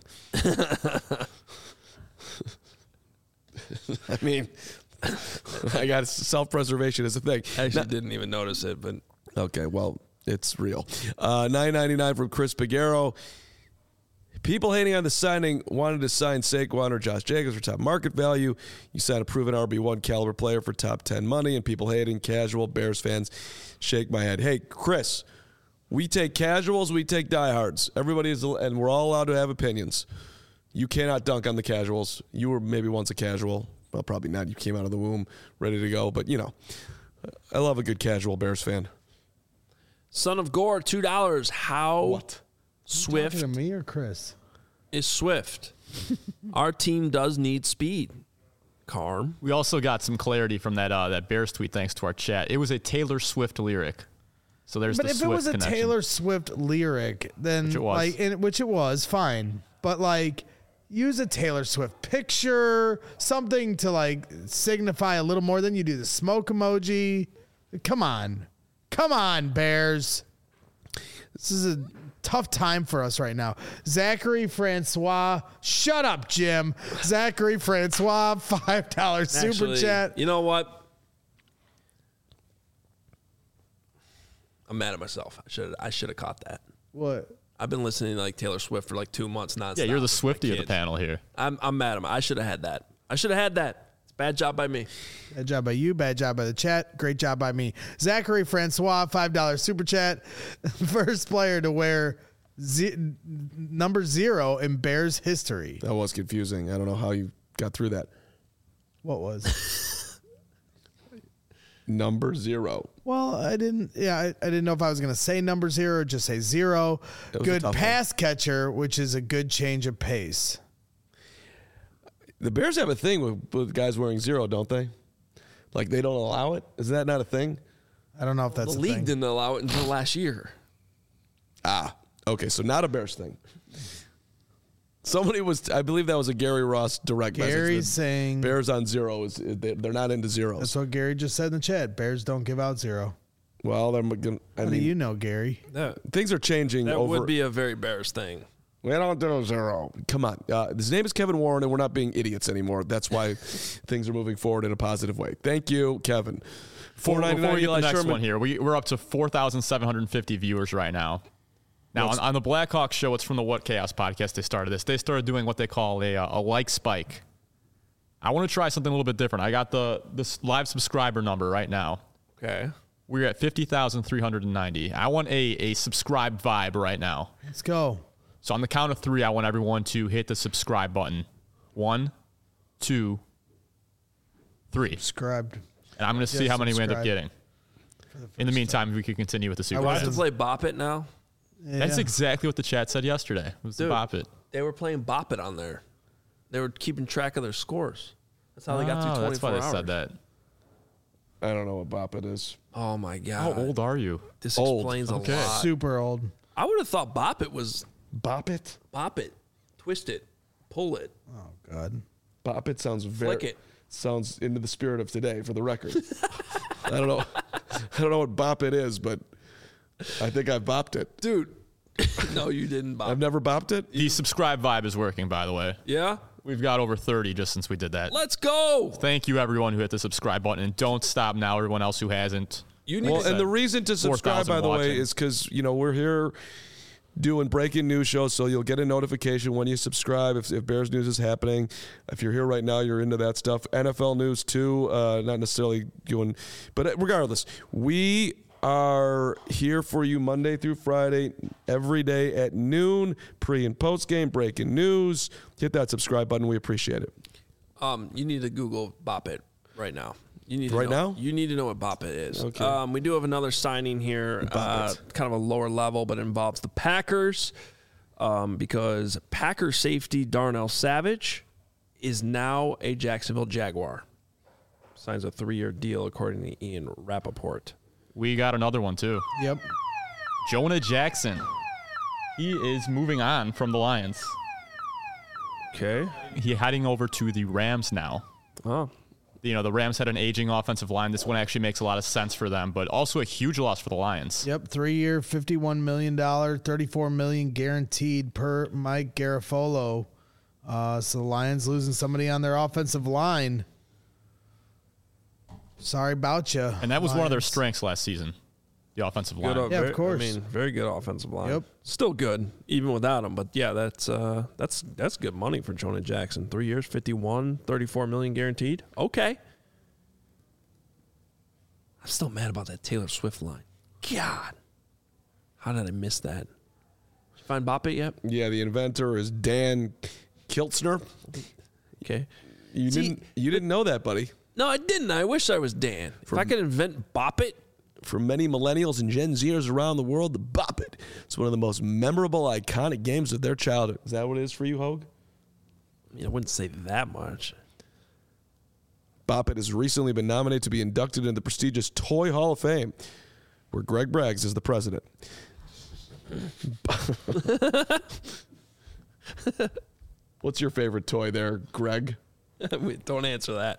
I mean, I got self-preservation is a thing. I actually Now- didn't even notice it, but Okay, well, it's real. Uh, nine ninety-nine from Chris Piguero. People hating on the signing wanted to sign Saquon or Josh Jacobs for top market value. You sign a proven R B one caliber player for top ten money, and people hating casual Bears fans shake my head. Hey, Chris, we take casuals, we take diehards. Everybody is, and we're all allowed to have opinions. You cannot dunk on the casuals. You were maybe once a casual. Well, probably not. You came out of the womb ready to go, but you know, I love a good casual Bears fan. Son of Gore, two dollars. How What? Swift Talking to me or Chris? is Swift? Our team does need speed. Carm. We also got some clarity from that uh, that Bears tweet thanks to our chat. It was a Taylor Swift lyric. So there's But the if Swift it was a connection. Taylor Swift lyric, then Which it was. like, and, which it was, fine. But like, use a Taylor Swift picture, something to like signify a little more than you do the smoke emoji. Come on, come on, Bears. This is a tough time for us right now. Zachary Francois, shut up, Jim. Zachary Francois, five dollars super Actually, chat. You know what? I'm mad at myself. I should I should have caught that. What? I've been listening to like Taylor Swift for like two months nonstop. Yeah, you're the with my Swiftie of the kids. panel here. I'm I'm mad at myself. I should have had that. I should have had that. It's a bad job by me. Bad job by you. Bad job by the chat. Great job by me. Zachary Francois, five dollars super chat. First player to wear ze- number zero in Bears history. That was confusing. I don't know how you got through that. What was? Number zero. Well, I didn't. Yeah, I, I didn't know if I was going to say number zero or just say zero. That was a Good tough one. pass catcher, which is a good change of pace. The Bears have a thing with, with guys wearing zero, don't they? Like they don't allow it? Is that not a thing? I don't know if that's The a league thing. didn't allow it until last year. Ah, okay. So not a Bears thing. Somebody was, I believe that was a Gary Ross direct message. Gary's that saying Bears on zero is they- they're not into zeros. that's what Gary just said in the chat. Bears don't give out zero. Well, they're gonna, I How mean, do you know, Gary? That, things are changing that over. would be a very Bears thing. We don't do zero. Come on. Uh, his name is Kevin Warren, and we're not being idiots anymore. That's why things are moving forward in a positive way. Thank you, Kevin. four ninety-nine Before we get the Eli next Sherman. one here, we, we're up to four thousand seven hundred fifty viewers right now. Now, on, on the Blackhawks show, it's from the What Chaos podcast, they started this. They started doing what they call a, uh, a like spike. I want to try something a little bit different. I got the this live subscriber number right now. Okay. We're at fifty thousand three hundred ninety. I want a, a subscribe vibe right now. Let's go. So on the count of three, I want everyone to hit the subscribe button. One, two, three. Subscribed. And I'm going to see Just how many we end up subscribe. getting. In the meantime, we can continue with the super Do I have chats. to play Bop It now? That's Yeah. exactly what the chat said yesterday. It was the Dude. Bop It. They were playing Bop It on there. They were keeping track of their scores. That's how they got through Oh, twenty-four that's why they hours. said that. I don't know what bop it is. Oh my god! How old are you? This Old. explains Okay. a lot. Super old. I would have thought Bop It was Bop it? Bop It, twist it, pull it, Oh God. Bop it sounds very. flick it. Sounds into the spirit of today, for the record. I don't know. I don't know what bop it is, but I think I bopped it. Dude. No, you didn't Bop. I've never bopped it. The subscribe vibe is working, by the way. Yeah. We've got over thirty just since we did that. Let's go. Thank you, everyone who hit the subscribe button. And don't stop now, everyone else who hasn't. You need Well, to and the reason to subscribe, 4,000 by the way, watching. is because you know we're here doing breaking news shows, so you'll get a notification when you subscribe if, if Bears news is happening. If you're here right now, you're into that stuff. N F L news too, uh, not necessarily doing, but regardless, we are here for you Monday through Friday, every day at noon, pre and post game, breaking news. Hit that subscribe button. We appreciate it. um, you need to Google Bop It right now. You need to Right know, now? You need to know what Bop It is. Okay. Um, we do have another signing here, uh, kind of a lower level, but it involves the Packers um, because Packer safety Darnell Savage is now a Jacksonville Jaguar. Signs a three-year deal, according to Ian Rappaport. We got another one, too. Yep. Jonah Jackson. He is moving on from the Lions. Okay. He's heading over to the Rams now. Oh. You know, the Rams had an aging offensive line. This one actually makes a lot of sense for them, but also a huge loss for the Lions. Yep, three-year, fifty-one million dollars, thirty-four million dollars guaranteed per Mike Garafolo. Uh, so the Lions losing somebody on their offensive line. Sorry about you. And that was Lions. one of their strengths last season, the offensive line. Good, Yeah, of very- course. I mean, very good offensive line. Yep. Still good, even without him. But yeah, that's uh, that's that's good money for Jonah Jackson. Three years, fifty-one, thirty-four million guaranteed. Okay. I'm still mad about that Taylor Swift line. God, how did I miss that? Did you find Bop It yet? Yeah, the inventor is Dan Kiltzner. Okay. You See- didn't you didn't know that, buddy. No, I didn't. I wish I was Dan. If I could invent Bop It, For many millennials and Gen Zers around the world, the Bop It. It's one of the most memorable, iconic games of their childhood. Is that what it is for you, Hogue? I mean, I wouldn't say that much. Bop It has recently been nominated to be inducted into the prestigious Toy Hall of Fame, where Greg Braggs is the president. What's your favorite toy there, Greg? Wait, don't answer that.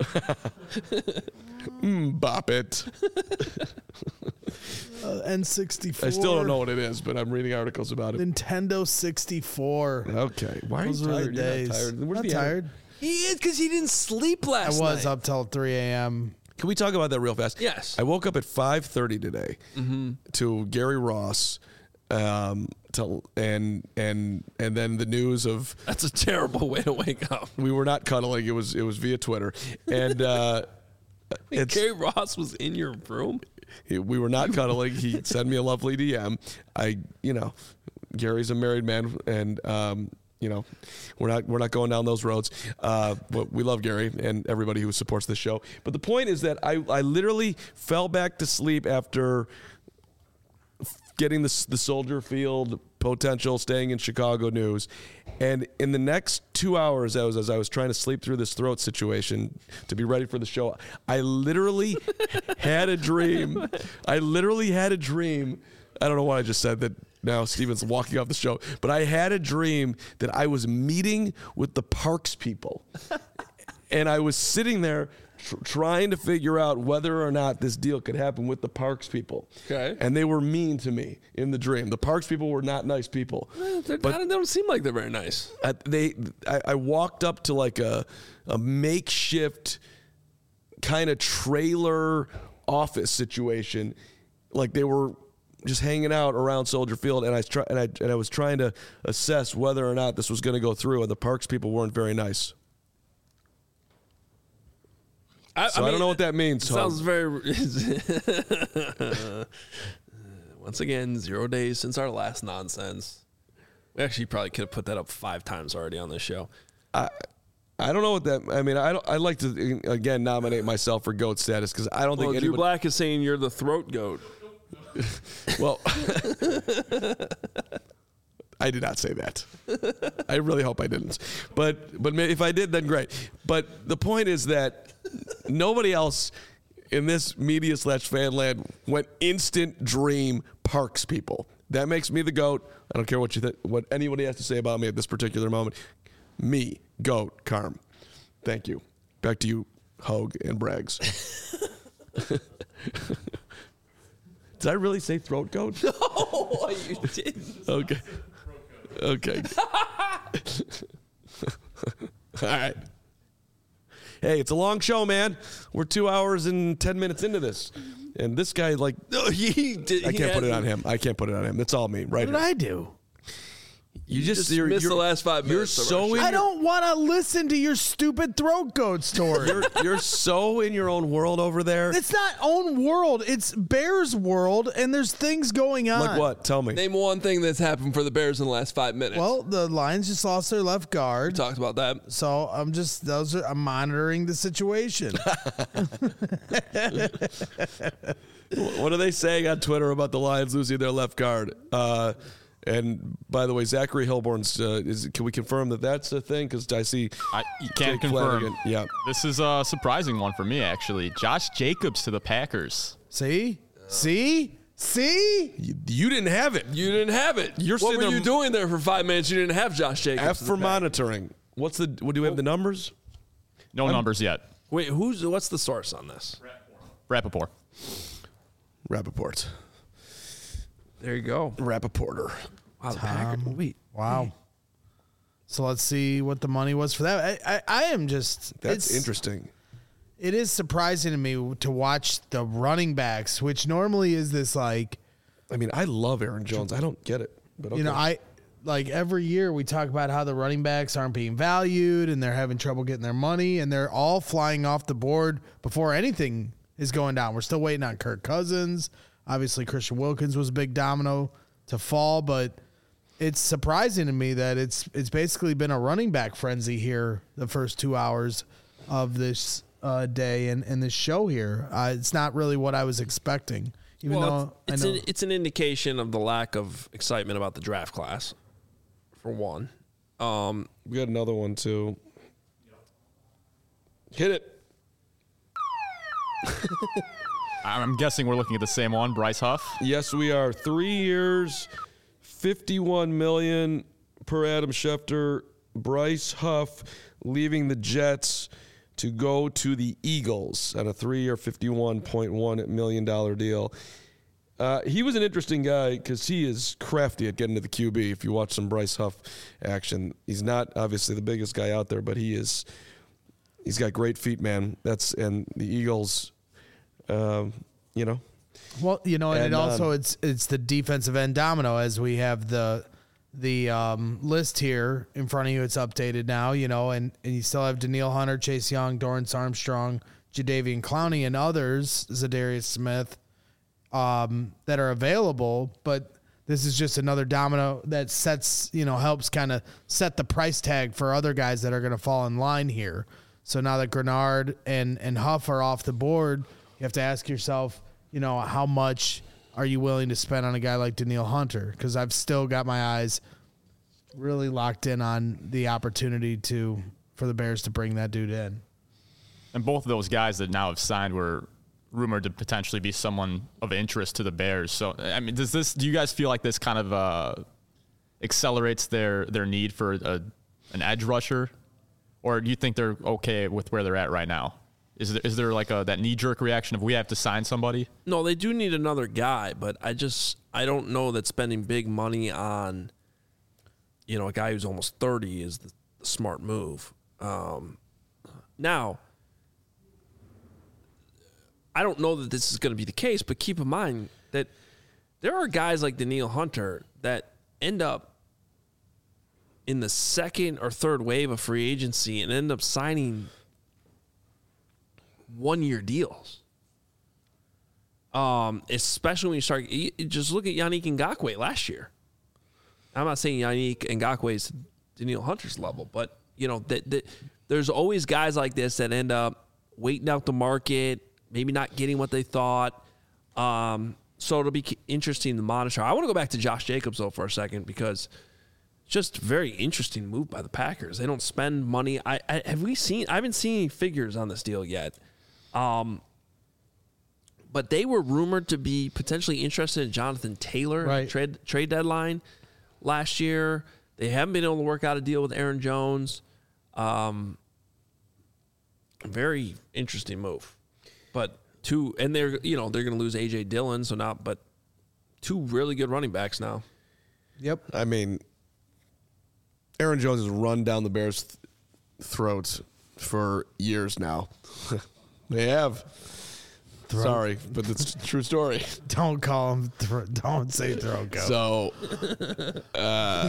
Mm, Bop It. Uh, N sixty-four. I still don't know what it is, but I'm reading articles about it. Nintendo sixty-four. Okay. Why are Those you were the tired? You're days. not tired. Where's Not the tired. He is because he didn't sleep I last was night. up till three a.m. Can we talk about that real fast? Yes. I woke up at five thirty today to Gary Ross, um, to, and and and then the news of That's a terrible way to wake up. we were not cuddling. It was it was via Twitter, and uh, it's Gary Ross was in your room. he- we were not cuddling. He sent me a lovely D M. I you know, Gary's a married man, and um, you know, we're not we're not going down those roads. Uh, but we love Gary and everybody who supports this show. But the point is that I I literally fell back to sleep after getting the the Soldier Field potential staying in Chicago news, and in the next two hours, as as I was trying to sleep through this throat situation to be ready for the show, I literally had a dream. I literally had a dream. I don't know why I just said that. Now Steven's walking off the show, but I had a dream that I was meeting with the Parks people, and I was sitting there tr- trying to figure out whether or not this deal could happen with the Parks people. Okay. And they were mean to me in the dream. The Parks people were not nice people. They're But- not, they don't seem like they're very nice. Uh, they, I, I walked up to like a, a makeshift kind of trailer office situation, like they were just hanging out around Soldier Field, and I try, and I and I was trying to assess whether or not this was going to go through, and the Parks people weren't very nice. I, So I, don't know what that means. It sounds very. Once again, zero days since our last nonsense. We actually probably could have put that up five times already on this show. I I don't know what that. I mean, I don't. I'd like to again nominate myself for GOAT status because I don't Well, think Drew anybody. Black is saying you're the throat goat. Well, I did not say that. I really hope I didn't. But but if I did, then great. But the point is that nobody else in this media slash fan land went instant dream Parks people. That makes me the GOAT. I don't care what you th- what anybody has to say about me at this particular moment. Me, GOAT, Carm. Thank you. Back to you, Hogue and Braggs. Did I really say throat goat? Oh, you didn't. Okay. Okay. All right. Hey, it's a long show, man. We're two hours and ten minutes into this. And this guy, like, No, he did. I he can't put it had- on him. I can't put it on him. That's all me, right What did here. I do? You, You just, just you're, missed you're, the last five You're minutes of so our show. in I your, don't want to listen to your stupid throat goat story. you're, you're so in your own world over there. It's not own world. It's Bears world, and there's things going on. Like what? Tell me. Name one thing that's happened for the Bears in the last five minutes. Well, the Lions just lost their left we guard. talked about that. So I'm just those are I'm monitoring the situation. What are they saying on Twitter about the Lions losing their left guard? Uh, and by the way, Zachary Hilborn's, uh, is, can we confirm that that's a thing? Because I see I you can't Jake confirm. Flanagan. Yeah. This is a surprising one for me, actually. Josh Jacobs to the Packers. See? See? See? You, you didn't have it. You didn't have it. You're what sitting were there- you doing there for five minutes? You didn't have Josh Jacobs. F in for the pack. monitoring. What's the, what, do we have the numbers? No numbers yet. Wait, who's what's the source on this? Rappaport. Rappaport. There you go. Rappaporter. Wow, the Packers. Wait, Wow. So let's see what the money was for that. I, I, I am just That's it's, interesting. It is surprising to me to watch the running backs, which normally is this like I mean, I love Aaron Jones. I don't get it. But okay. you know, I like every year we talk about how the running backs aren't being valued and they're having trouble getting their money and they're all flying off the board before anything is going down. We're still waiting on Kirk Cousins. Obviously, Christian Wilkins was a big domino to fall, but it's surprising to me that it's it's basically been a running back frenzy here the first two hours of this uh, day and, and this show here. Uh, it's not really what I was expecting, even well, though it's, I know. an, it's an indication of the lack of excitement about the draft class, for one. Um, we got another one, too. Hit it. I'm guessing we're looking at the same one, Bryce Huff. Yes, we are. Three years, fifty-one million dollars per Adam Schefter. Bryce Huff leaving the Jets to go to the Eagles on a three-year, fifty-one point one million dollars deal. Uh, he was an interesting guy because he is crafty at getting to the Q B. If you watch some Bryce Huff action, he's not obviously the biggest guy out there, but he is. He's got great feet, man. That's and the Eagles. Um, you know, Well, you know, and, And, it also um, it's it's the defensive end domino as we have the the um, list here in front of you. It's updated now, you know, and, and you still have Danielle Hunter, Chase Young, Dorrance Armstrong, Jadeveon Clowney, and others, Zadarius Smith, um, that are available. But this is just another domino that sets, you know, helps kind of set the price tag for other guys that are going to fall in line here. So now that Grenard and, and Huff are off the board, you have to ask yourself, you know, how much are you willing to spend on a guy like Danielle Hunter? Because I've still got my eyes really locked in on the opportunity to for the Bears to bring that dude in. And both of those guys that now have signed were rumored to potentially be someone of interest to the Bears. So, I mean, does this? Do you guys feel like this kind of uh, accelerates their their need for a, an edge rusher, or do you think they're okay with where they're at right now? Is there, is there like a that knee jerk reaction of we have to sign somebody? no, they do need another guy, but I just I don't know that spending big money on, you know, a guy who's almost thirty is the, the smart move. Um, now, I don't know that this is going to be the case, but keep in mind that there are guys like Danielle Hunter that end up in the second or third wave of free agency and end up signing one-year deals. Um, especially when you start, you, just look at Yannick Ngakoue last year. I'm not saying Yannick Ngakoue is Danielle Hunter's level, but you know that, that there's always guys like this that end up waiting out the market, maybe not getting what they thought. Um, so it'll be interesting to monitor. I want to go back to Josh Jacobs though for a second because it's just a very interesting move by the Packers. They don't spend money. I, I have we seen? I haven't seen any figures on this deal yet. Um, but they were rumored to be potentially interested in Jonathan Taylor Right. trade trade deadline last year. They haven't been able to work out a deal with Aaron Jones. Um, very interesting move, but two and they're you know they're going to lose A J Dillon, so now but two really good running backs now. Yep. I mean, Aaron Jones has run down the Bears' th- throats for years now. They have. Throat. Sorry, but it's a true story. Don't call him. Thro- don't say throat goat. So, uh,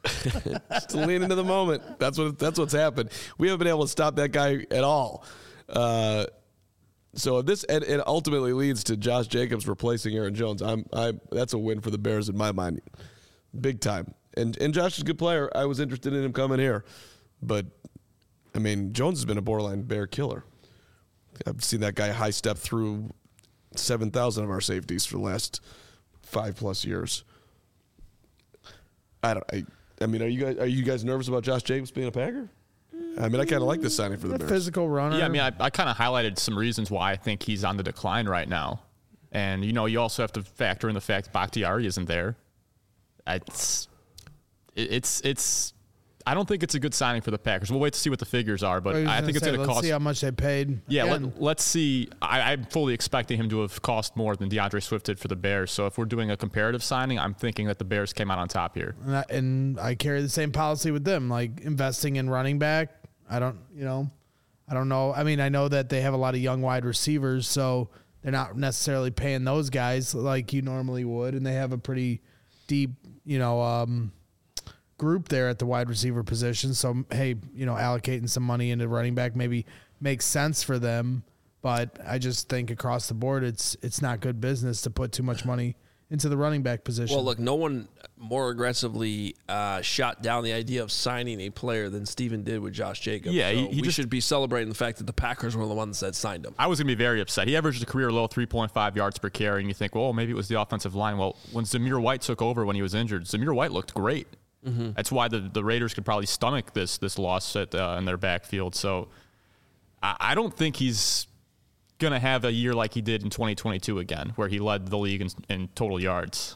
Just to lean into the moment. That's what that's what's happened. We haven't been able to stop that guy at all. Uh, so this and it ultimately leads to Josh Jacobs replacing Aaron Jones. I'm I that's a win for the Bears in my mind, big time. And and Josh is a good player. I was interested in him coming here, but I mean Jones has been a borderline Bear killer. I've seen that guy high step through seven thousand of our safeties for the last five plus years. I don't. I, I mean, are you guys are you guys nervous about Josh Jacobs being a Packer? I mean, I kind of like this signing for the A Bears. physical runner. Yeah, I mean, I, I kind of highlighted some reasons why I think he's on the decline right now. And, you know, you also have to factor in the fact Bakhtiari isn't there. It's, it's, it's, I don't think it's a good signing for the Packers. We'll wait to see what the figures are, but I think it's going to cost. Let's see how much they paid. Yeah, Again, let, let's see. I, I'm fully expecting him to have cost more than DeAndre Swift did for the Bears. So if we're doing a comparative signing, I'm thinking that the Bears came out on top here. And I, and I carry the same policy with them, like investing in running back. I don't, you know, I don't know. I mean, I know that they have a lot of young wide receivers, so they're not necessarily paying those guys like you normally would, and they have a pretty deep, you know, um, group there at the wide receiver position. So, hey, you know, allocating some money into running back maybe makes sense for them, but I just think across the board, it's it's not good business to put too much money into the running back position. Well, look, no one more aggressively uh, shot down the idea of signing a player than Steven did with Josh Jacobs. Yeah, so he- he we just- should be celebrating the fact that the Packers were the ones that signed him. I was going to be very upset. He averaged a career low three point five yards per carry, and you think, well, maybe it was the offensive line. Well, when Zamir White took over when he was injured, Zamir White looked great. Mm-hmm. That's why the, the Raiders could probably stomach this this loss at, uh, in their backfield. So I, I don't think he's going to have a year like he did in twenty twenty-two again, where he led the league in, in total yards.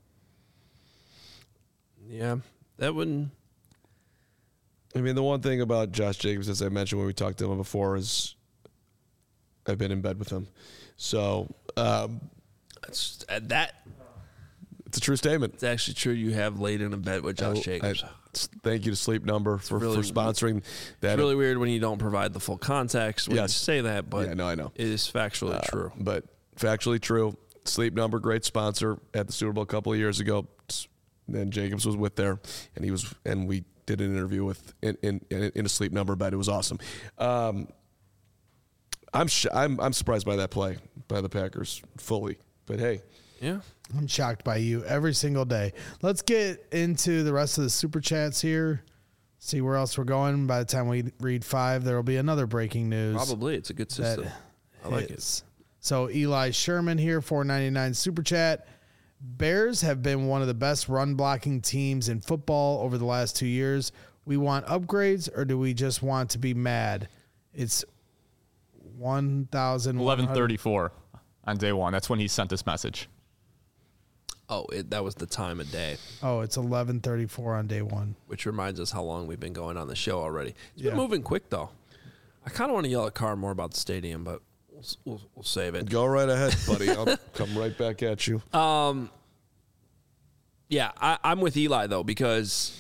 Yeah, that wouldn't. I mean, the one thing about Josh Jacobs, as I mentioned when we talked to him before, is I've been in bed with him. So um, It's, uh, that it's a true statement. it's actually true. You have laid in a bed with Josh I- Jacobs. I- thank you to Sleep Number for, really- for sponsoring that. It's really weird when you don't provide the full context when Yes. you say that, but Yeah, no, I know. it is factually Uh, true. But factually true. Sleep Number, great sponsor at the Super Bowl a couple of years ago. And Jacobs was with there, and he was, and we did an interview with in in, in a Sleep Number bed. It was awesome. Um, I'm sh- I'm I'm surprised by that play by the Packers fully, but hey, Yeah. I'm shocked by you every single day. Let's get into the rest of the super chats here. See where else we're going. By the time we read five, there will be another breaking news. Probably. It's a good that system. I like it. hits. So Eli Sherman here, four ninety-nine super chat. Bears have been one of the best run blocking teams in football over the last two years. We want upgrades, or do we just want to be mad? It's one thousand eleven thirty-four on day one. That's when he sent this message. Oh, it, that was the time of day, Oh, it's eleven thirty-four on day one. which reminds us how long we've been going on the show already. It's Yeah. been moving quick, though. I kind of want to yell at Carr more about the stadium, but we'll, we'll, we'll save it. go right ahead, buddy. I'll come right back at you. Yeah, I, I'm with Eli, though, because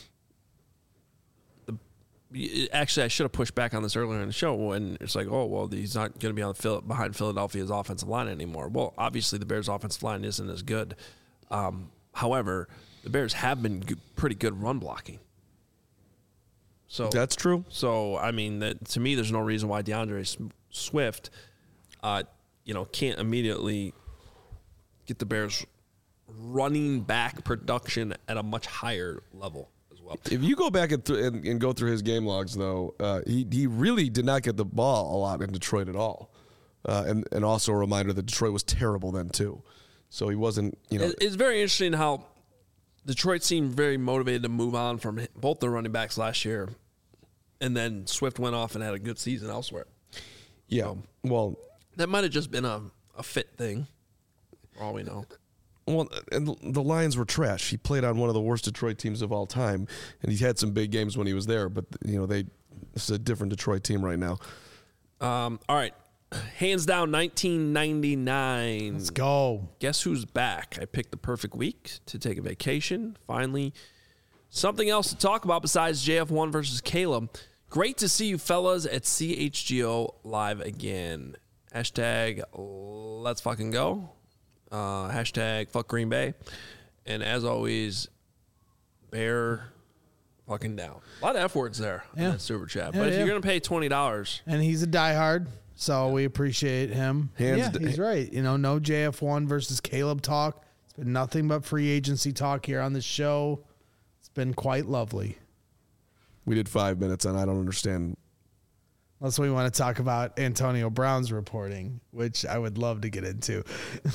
the, actually I should have pushed back on this earlier in the show when it's like, oh, well, he's not going to be on the Phil, behind Philadelphia's offensive line anymore. Well, obviously the Bears' offensive line isn't as good. Um, however, the Bears have been g- pretty good run blocking. So That's true. So I mean, that to me, there's no reason why DeAndre S- Swift, uh, you know, can't immediately get the Bears running back production at a much higher level as well. If you go back and, th- and, and go through his game logs, though, uh, he he really did not get the ball a lot in Detroit at all. Uh, and and also a reminder that Detroit was terrible then too, so he wasn't. You know, It- It's very interesting how Detroit seemed very motivated to move on from both their running backs last year, and then Swift went off and had a good season elsewhere. yeah. Well, That might have just been a, a fit thing, for all we know. well, and the- the Lions were trash. He played on one of the worst Detroit teams of all time, and he had some big games when he was there. But you know, they this is a different Detroit team right now. Um, all right. Hands down, nineteen ninety-nine. Let's go. Guess who's back? I picked the perfect week to take a vacation. Finally, something else to talk about besides J F one versus Caleb. Great to see you fellas at C H G O live again. Hashtag let's fucking go. Uh, hashtag fuck Green Bay. And as always, Bear fucking down. A lot of F words there Yeah. in that super chat. Yeah, but if yeah. you're going to pay twenty dollars, And he's a diehard, so we appreciate him. Hands yeah, d- he's right. You know, no J F one versus Caleb talk. It's been nothing but free agency talk here on the show. It's been quite lovely. We did five minutes, and I don't understand. Unless we want to talk about Antonio Brown's reporting, which I would love to get into.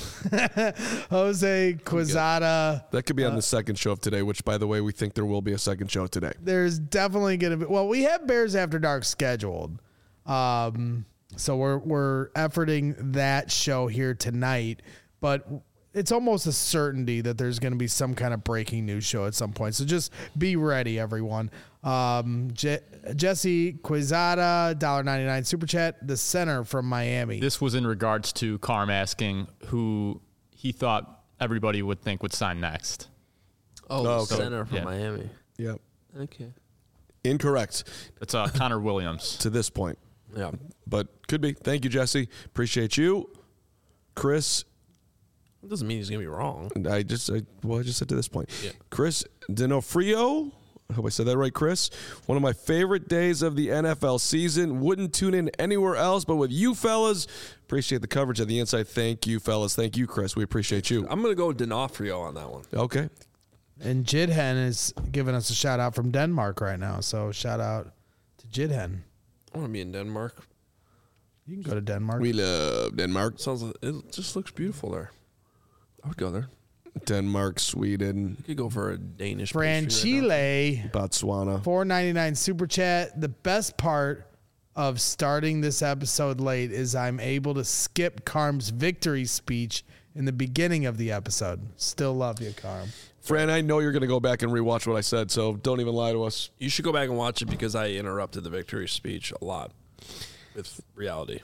Jose Quezada. That could be on the second show of today, which, by the way, we think there will be a second show today. There's definitely going to be. Well, we have Bears After Dark scheduled. Um, so we're we're efforting that show here tonight, but it's almost a certainty that there's going to be some kind of breaking news show at some point. So just be ready, everyone. Um, Je- Jesse Quezada, one dollar ninety-nine super chat, the center from Miami. This was in regards to Carm asking who he thought everybody would think would sign next. oh, Oh, the okay. center from Yeah. Miami. Yep. Okay. Incorrect It's uh, Connor Williams. to this point, Yeah. but could be. Thank you, Jesse. Appreciate you. Chris, It doesn't mean he's going to be wrong. I just, I, well, I just said to this point. Yeah. Chris D'Onofrio. I hope I said that right, Chris. One of my favorite days of the N F L season. Wouldn't tune in anywhere else but with you fellas. Appreciate the coverage of the inside. Thank you, fellas. Thank you, Chris. We appreciate you. I'm going to go D'Onofrio on that one. Okay. And Jidhen is giving us a shout out from Denmark right now. So shout out to Jidhen. I want to be in Denmark. You can go to Denmark. We love Denmark. Sounds like, it just looks beautiful there. I would go there. Denmark, Sweden, You could go for a Danish pastry right Franchile. Botswana. four ninety-nine super chat. The best part of starting this episode late is I'm able to skip Carm's victory speech in the beginning of the episode. Still love you, Carm. Fran, I know you're going to go back and rewatch what I said, so don't even lie to us. You should go back and watch it because I interrupted the victory speech a lot with reality.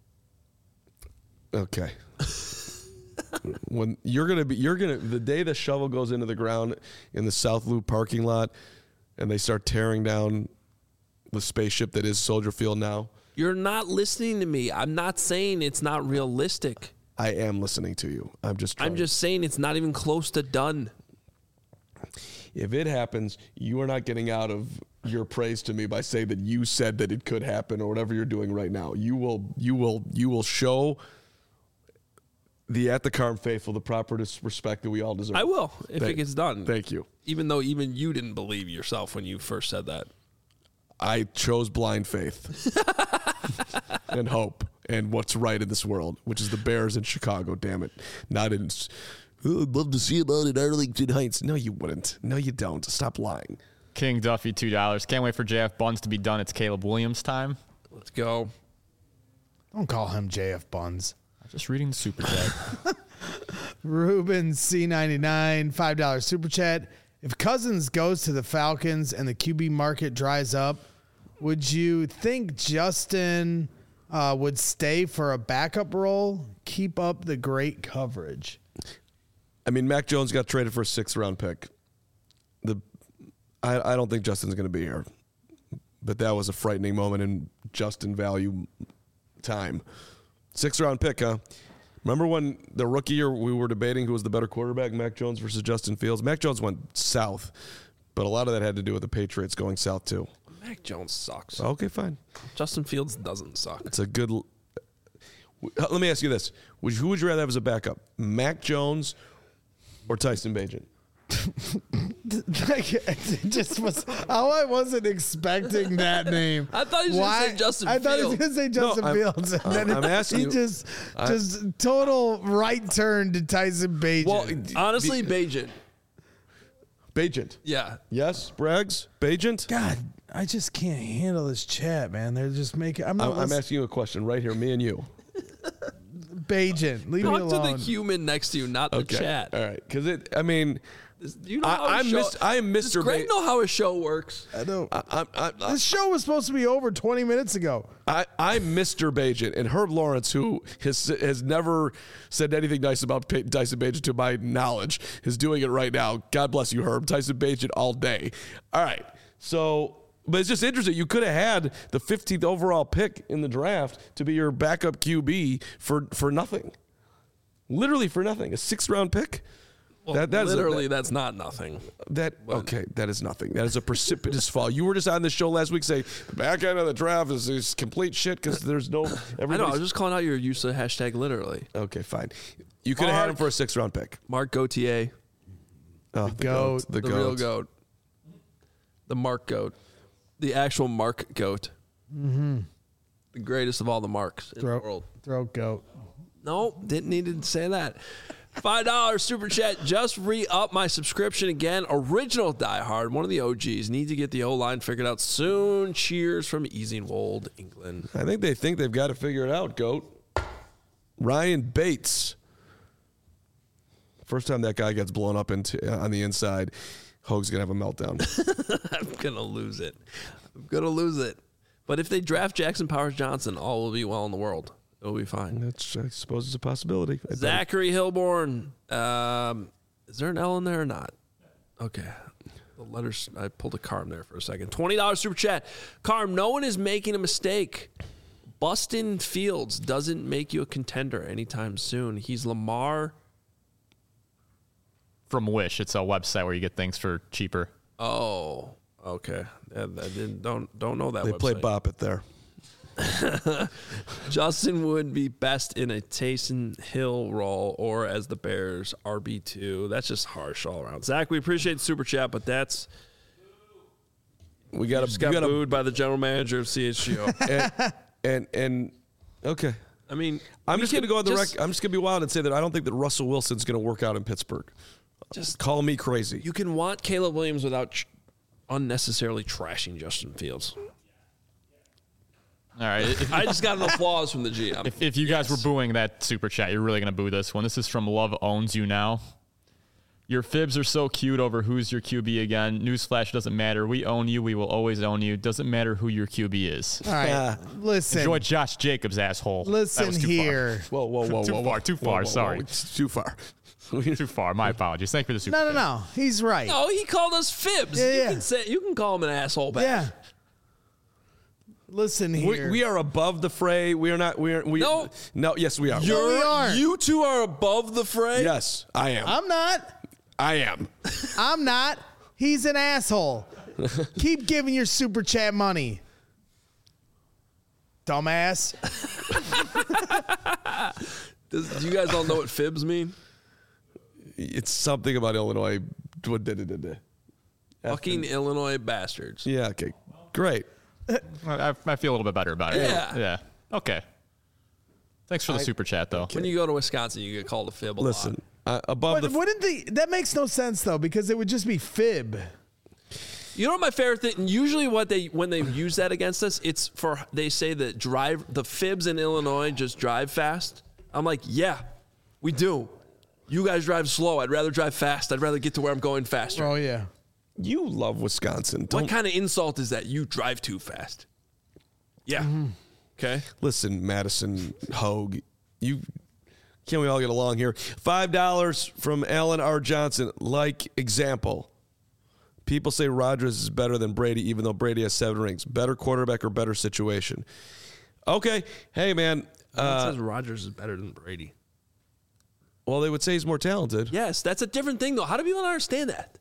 Okay. When you're gonna be, you're gonna the day the shovel goes into the ground in the South Loop parking lot, and they start tearing down the spaceship that is Soldier Field now. You're not listening to me. I'm not saying it's not realistic. I am listening to you. I'm just. Trying. I'm just saying it's not even close to done. If it happens, you are not getting out of your praise to me by saying that you said that it could happen or whatever you're doing right now. You will. You will. You will show the At the Carm faithful the proper respect that we all deserve. I will if Thank- it gets done. Thank you. Even though even you didn't believe yourself when you first said that. I chose blind faith and hope and what's right in this world, which is the Bears in Chicago. Damn it, not in. Oh, I'd love to see him out in Arlington Heights. No, you wouldn't. No, you don't. Stop lying. King Duffy, two dollars. Can't wait for J F Buns to be done. It's Caleb Williams time. Let's go. Don't call him J F Buns. I'm just reading the super chat. Ruben C ninety-nine, five dollar super chat. If Cousins goes to the Falcons and the Q B market dries up, would you think Justin uh, would stay for a backup role? Keep up the great coverage. I mean, Mac Jones got traded for a sixth round pick. The, I, I don't think Justin's going to be here, but that was a frightening moment in Justin value time. Sixth round pick, huh? Remember when the rookie year we were debating who was the better quarterback, Mac Jones versus Justin Fields? Mac Jones went south, but a lot of that had to do with the Patriots going south too. Mac Jones sucks. Okay, fine. Justin Fields doesn't suck. It's a good. l- Let me ask you this: would, who would you rather have as a backup, Mac Jones or Tyson Bagent? Like, it just was how I wasn't expecting that name. I thought he was gonna say Justin I thought he was Fields. going to say Justin I'm- Fields. And then I'm asking he you- just, I- just total right turn to Tyson Bagent. Well, Honestly, Bajan. Bagent. Yeah. Yes, Braggs, Bagent. God, I just can't handle this chat, man. They're just making. I'm not. I'm, I'm asking you a question right here, me and you. Bagent. Leave me Talk to alone. the human next to you, not the chat. All right, because it. I mean, Do you know I- how a I'm show, Mis- I am Does Mister Greg Ba- know how a show works? I know. I, I, I, I, This show was supposed to be over twenty minutes ago. I, I'm Mister Bagent, and Herb Lawrence, who has has never said anything nice about Pa- Tyson Bagent to my knowledge, is doing it right now. God bless you, Herb. Tyson Bagent all day. All right, so. But it's just interesting. You could have had the fifteenth overall pick in the draft to be your backup Q B for, for nothing. Literally for nothing. A sixth round pick. Well, that that is a- literally, that- that's not nothing. That okay, that is nothing. That is a precipitous fall. You were just on the show last week saying the back end of the draft is, is complete shit because there's no. I know. I everybody's- was just calling out your use of hashtag literally. Okay, fine. You could have had him Mark- for a sixth round pick. Mark Gauthier, Oh, the goat. The, the goat. real goat, the Mark goat, the actual Mark goat, mm-hmm. the greatest of all the Marks in Throat, the world. throat goat. No, didn't need to say that. Five dollars super chat. Just re-up my subscription again. Original Die Hard, one of the O Gs. Need to get the O line figured out soon. Cheers from Easingwold, England. I think they think they've got to figure it out, goat. Ryan Bates. First time that guy gets blown up into uh, on the inside, Hoag's gonna have a meltdown. I'm gonna lose it. I'm gonna lose it. But if they draft Jackson Powers Johnson, all will be well in the world. It'll be fine. That's, I suppose, it's a possibility. I bet. Zachary Hilborn. Um, is there an L in there or not? Okay. The letters, I pulled a Carm there for a second. twenty dollars super chat. Carm, no one is making a mistake. Bustin Fields doesn't make you a contender anytime soon. He's Lamar. From Wish. It's a website where you get things for cheaper. Oh, okay. I, I didn't, don't, don't know that They website. play Bop It there. Justin would be best in a Taysom Hill role or as the Bears R B two. That's just harsh all around. Zach, we appreciate the super chat, but that's We got just to got got booed by the general manager of C H G O. and, and and okay. I mean, I'm we just going to could go on the just- rec- I'm just going to be wild and say that I don't think that Russell Wilson's going to work out in Pittsburgh. Just Call me crazy. you can want Caleb Williams without tr- unnecessarily trashing Justin Fields. All right. If, I just got an applause from the G M. if, if you guys were booing that super chat, you're really going to boo this one. This is from Love Owns You Now. Your fibs are so cute over who's your Q B again. Newsflash, doesn't matter. We own you. We will always own you. Doesn't matter who your Q B is. All right, Ah. listen. Enjoy Josh Jacobs, asshole. That Listen was too here. Whoa, whoa, whoa, Too whoa, far, whoa. too Whoa, far, whoa, whoa. sorry. It's too far. Far. Too far. My apologies. Thank you for the super No, no, chat. no. He's right. No, he called us fibs. Yeah, you yeah. can say you can call him an asshole back. Yeah. Listen We, here. we are above the fray. We are not. We are. We, No. No. Yes, we are. No, we aren't. You two are above the fray. Yes, I am. I'm not. I am. I'm not. He's an asshole. Keep giving your super chat money. Dumbass. Does, do you guys all know what fibs mean? It's something about Illinois. What did it? did Fucking Illinois bastards. Yeah. Okay. Great. I, I feel a little bit better about it. Yeah. Yeah. Okay. Thanks for the super chat, though. When you go to Wisconsin, you get called a fib a Listen. lot. Uh, above But the. wouldn't the that makes no sense though, because it would just be fib. You know what my favorite thing? Usually, what they when they use that against us, it's for they say that drive the fibs in Illinois just drive fast. I'm like, yeah, we do. You guys drive slow. I'd rather drive fast. I'd rather get to where I'm going faster. Oh yeah. You love Wisconsin. Don't What kind of insult is that? You drive too fast. Yeah. Okay. listen, Madison Hogue. You can't we all get along here? Five dollars from Alan R. Johnson. Like example. People say Rodgers is better than Brady, even though Brady has seven rings. Better quarterback or better situation? Okay. Hey, man. It Uh, says Rodgers is better than Brady. well, they would say he's more talented. Yes, that's a different thing, though. How do people not understand that?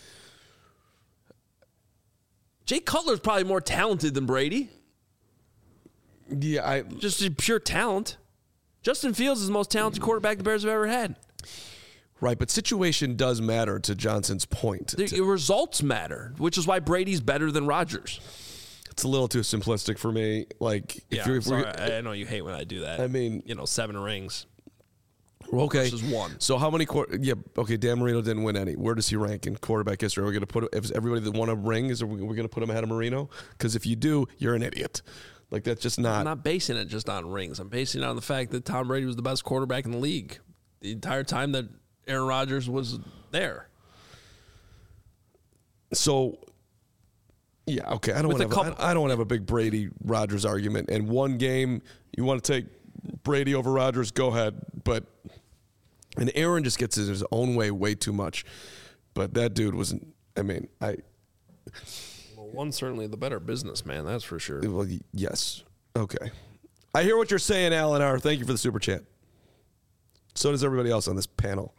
Jay Cutler's probably more talented than Brady. Yeah, I Just pure talent. Justin Fields is the most talented quarterback the Bears have ever had. right, but situation does matter to Johnson's point. The the results matter, which is why Brady's better than Rodgers. It's a little too simplistic for me. Like, if Yeah, you're, if sorry, we're, I know you hate when I do that. I mean- you know, seven rings. okay, versus one. So how many? Quar- yeah, okay. Dan Marino didn't win any. Where does he rank in quarterback history? Are we going to put if everybody that won a ring? Is we going to put him ahead of Marino? Because if you do, you're an idiot. Like that's just not. I'm not basing it just on rings. I'm basing it on the fact that Tom Brady was the best quarterback in the league the entire time that Aaron Rodgers was there. So, yeah, okay. I don't With want a to. couple- I don't want to have a big Brady Rodgers argument. And one game, you want to take Brady over Rodgers, go ahead. But and Aaron just gets in his own way way too much. But that dude wasn't. I mean, I. Well, one's certainly the better businessman, that's for sure. Well, y- yes. Okay. I hear what you're saying, Alan R. Thank you for the super chat. So does everybody else on this panel.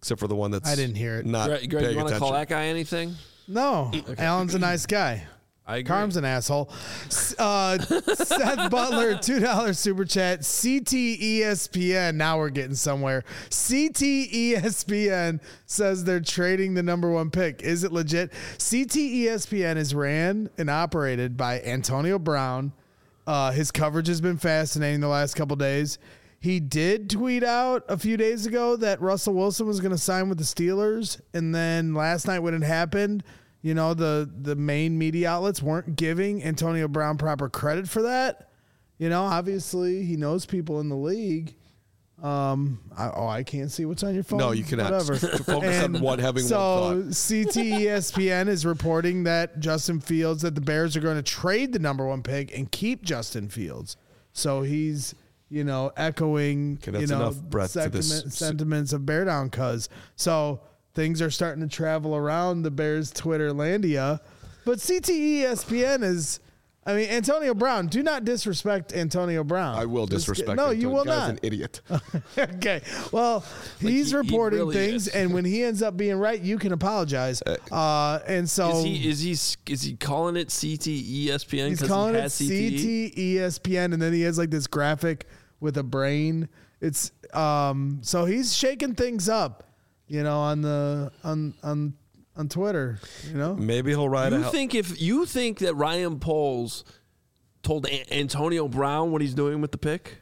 except for the one that's I didn't hear it. Not Greg, Greg paying you want to attention. call that guy anything? No, Alan's a nice guy. I agree. Carm's an asshole. Uh, Seth Butler, two dollars super chat. C T E S P N. Now we're getting somewhere. C T E S P N says they're trading the number one pick. Is it legit? C T E S P N is ran and operated by Antonio Brown. Uh, his coverage has been fascinating the last couple days. He did tweet out a few days ago that Russell Wilson was going to sign with the Steelers. And then last night when it happened, you know, the, the main media outlets weren't giving Antonio Brown proper credit for that. You know, obviously he knows people in the league. Um, I, oh, I can't see what's on your phone. No, you cannot. Whatever. Focus on what having so one thought. C T E S P N is reporting that Justin Fields, that the Bears are going to trade the number one pick and keep Justin Fields. So he's, you know, echoing, Okay, that's you know, enough breadth to this. sentiment, sentiments of Bear Down Cuz. So things are starting to travel around the Bears Twitter landia. But C T E S P N is, I mean, Antonio Brown. Do not disrespect Antonio Brown. I will Just disrespect get- No, him. you The will guy's not. an idiot. Okay. Well, he's he- he reporting really things, is. and when he ends up being right, you can apologize. Uh, and so Is he is he is he calling it C T E S P N? he's 'cause calling he it has C T E? C T E S P N, and then he has like this graphic with a brain. It's um, so he's shaking things up, you know, on the on on on Twitter. You know, Maybe he'll ride a You hell. think if you think that Ryan Poles told A- Antonio Brown what he's doing with the pick?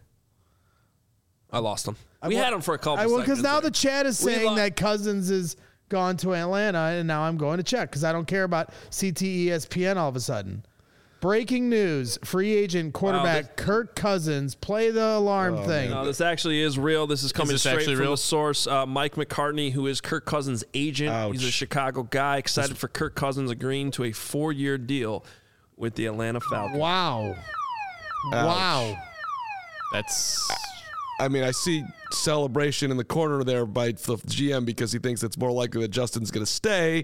I lost him. We well, had him for a couple. I will because seconds now there. the chat is We saying lo- that Cousins is gone to Atlanta, and now I'm going to check because I don't care about C T E S P N all of a sudden. Breaking news: free agent quarterback Kirk Cousins. Play the alarm thing. No, this actually is real. This is coming this straight actually from real? the source. Uh, Mike McCartney, who is Kirk Cousins' agent. Ouch. He's a Chicago guy. Excited for Kirk Cousins agreeing to a four-year deal with the Atlanta Falcons. Wow. Wow. That's I mean, I see celebration in the corner there by the G M because he thinks it's more likely that Justin's going to stay.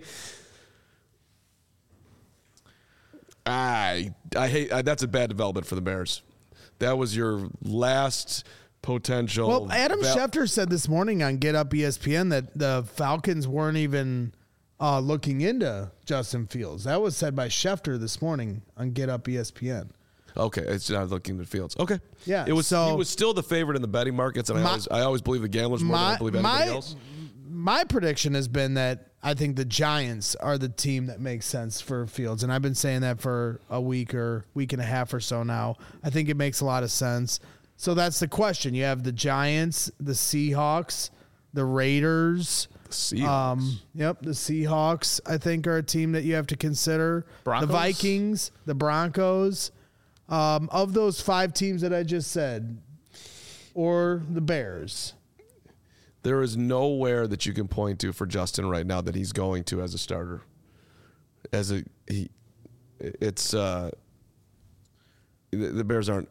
I I hate I, that's a bad development for the Bears. That was your last potential. Well, Adam val- Schefter said this morning on Get Up E S P N that the Falcons weren't even uh, looking into Justin Fields. That was said by Schefter this morning on Get Up E S P N. Okay, it's not looking at Fields. Okay, Yeah, it was. so- he was still the favorite in the betting markets, and I My- always I always believe the gamblers more than I My believe anybody my, else. my prediction has been that I think the Giants are the team that makes sense for Fields, and I've been saying that for a week or week and a half or so now. I think it makes a lot of sense. So that's the question. You have the Giants, the Seahawks, the Raiders. Seahawks. Um, yep, the Seahawks, I think, are a team that you have to consider. Broncos? The Vikings, the Broncos. Um, of those five teams that I just said, or the Bears. There is nowhere that you can point to for Justin right now that he's going to as a starter. As a he, it's uh, the, the Bears aren't.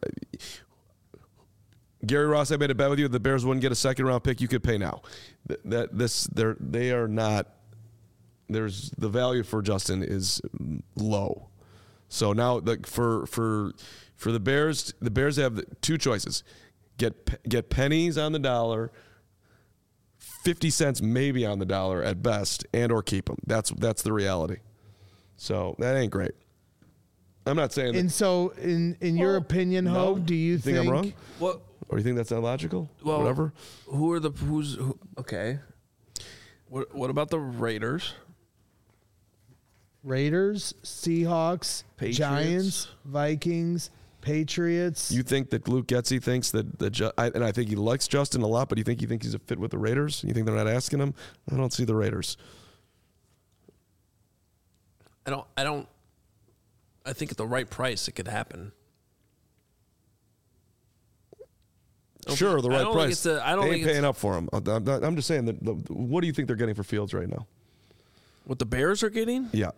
Gary Ross, I made a bet with you. The Bears wouldn't get a second round pick. You could pay now. Th- That this they're they are not. There's the value for Justin is low. So now, like for for for the Bears, the Bears have the two choices: get get pennies on the dollar, fifty cents maybe on the dollar at best, and or keep them. That's that's the reality. So that ain't great. I'm not saying that. And so, in in your Well, opinion, no. Hope, do you You think think, I'm wrong? What? Or you think that's not logical? Well, Whatever. Who are the who's who, okay? What what about the Raiders? Raiders, Seahawks, Patriots. Giants, Vikings, Patriots? You think that Luke Getsy thinks that that Ju- I, and I think he likes Justin a lot, but you think he thinks he's a fit with the Raiders? You think they're not asking him? I don't see the Raiders. I don't. I don't. I think at the right price, it could happen. Sure, the I right don't think price. it's a- I don't they think ain't it's- paying up for him. I'm, not- I'm just saying that. The, what do you think they're getting for Fields right now? What the Bears are getting? Yeah.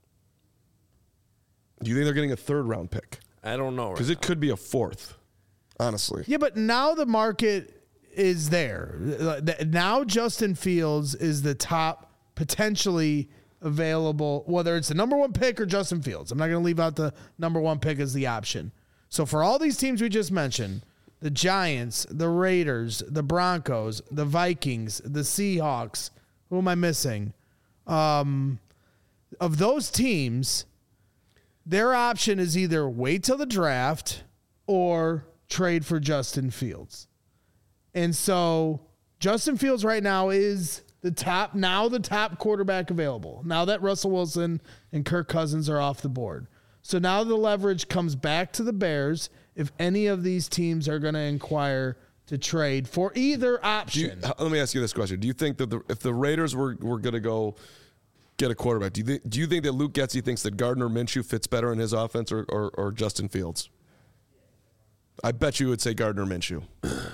Do you think they're getting a third round pick? I don't know. Because Right it could be a fourth. Honestly. Yeah, but now the market is there. Now Justin Fields is the top potentially available, whether it's the number one pick or Justin Fields. I'm not going to leave out the number one pick as the option. So for all these teams we just mentioned, the Giants, the Raiders, the Broncos, the Vikings, the Seahawks, Who am I missing? Um, of those teams, their option is either wait till the draft or trade for Justin Fields. And so Justin Fields right now is the top, now the top quarterback available. Now that Russell Wilson and Kirk Cousins are off the board. So now the leverage comes back to the Bears if any of these teams are going to inquire to trade for either option. You, let me ask you this question. Do you think that the, if the Raiders were, were going to go get a quarterback, do you, th- do you think that Luke Getsy thinks that Gardner Minshew fits better in his offense or, or, or Justin Fields? I bet you would say Gardner Minshew.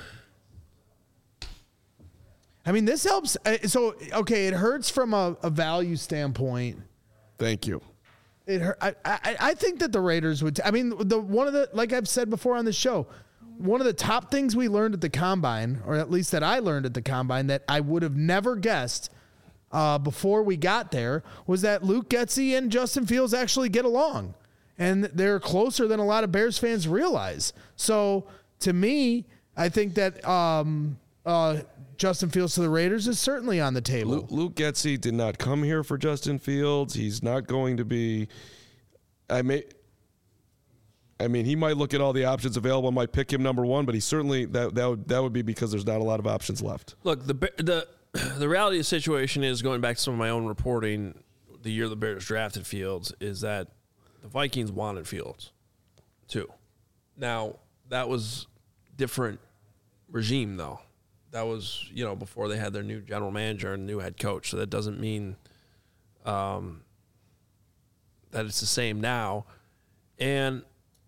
I mean, this helps. So, okay, it hurts from a, a value standpoint. Thank you. It hurt. I, I, I think that the Raiders would. T- I mean, the one of the, like I've said before on the show, one of the top things we learned at the Combine, or at least that I learned at the Combine, that I would have never guessed uh, before we got there, was that Luke Getsy and Justin Fields actually get along. And they're closer than a lot of Bears fans realize. So, to me, I think that um, uh, Justin Fields to the Raiders is certainly on the table. Luke, Luke Getsy did not come here for Justin Fields. He's not going to be. I may. I mean, he might look at all the options available, might pick him number one, but he certainly that that would that would be because there's not a lot of options left. Look, the the the reality of the situation is, going back to some of my own reporting, the year the Bears drafted Fields, is that the Vikings wanted Fields too. Now, that was different regime though. That was, you know, before they had their new general manager and new head coach. So that doesn't mean um, that it's the same now. And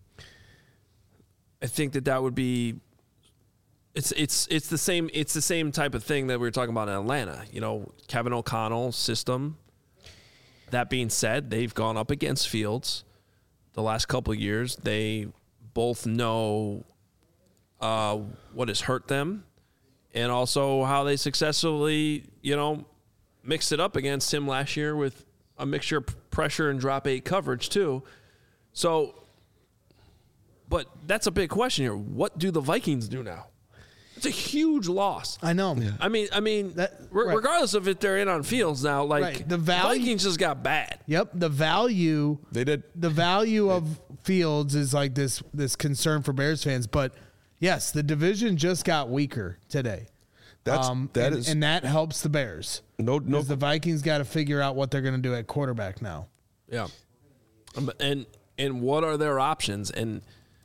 I think that that would be it's it's it's the same it's the same type of thing that we were talking about in Atlanta. You know, Kevin O'Connell's system. That being said, they've gone up against Fields the last couple of years. They both know uh, what has hurt them, and also how they successfully, you know, mixed it up against him last year with a mixture of pressure and drop eight coverage too. So, but that's a big question here. What do the Vikings do now? It's a huge loss. I know. Yeah. I mean, I mean, That- re- right. regardless of if they're in on Fields now, like Right. The value- Vikings just got bad. Yep. The value. They did. The value of Fields is like this this concern for Bears fans, but yes, the division just got weaker today. That's um, that and, is and that helps the Bears. no no. Because the Vikings got to figure out what they're going to do at quarterback now. Yeah, Um, and and what are their options? And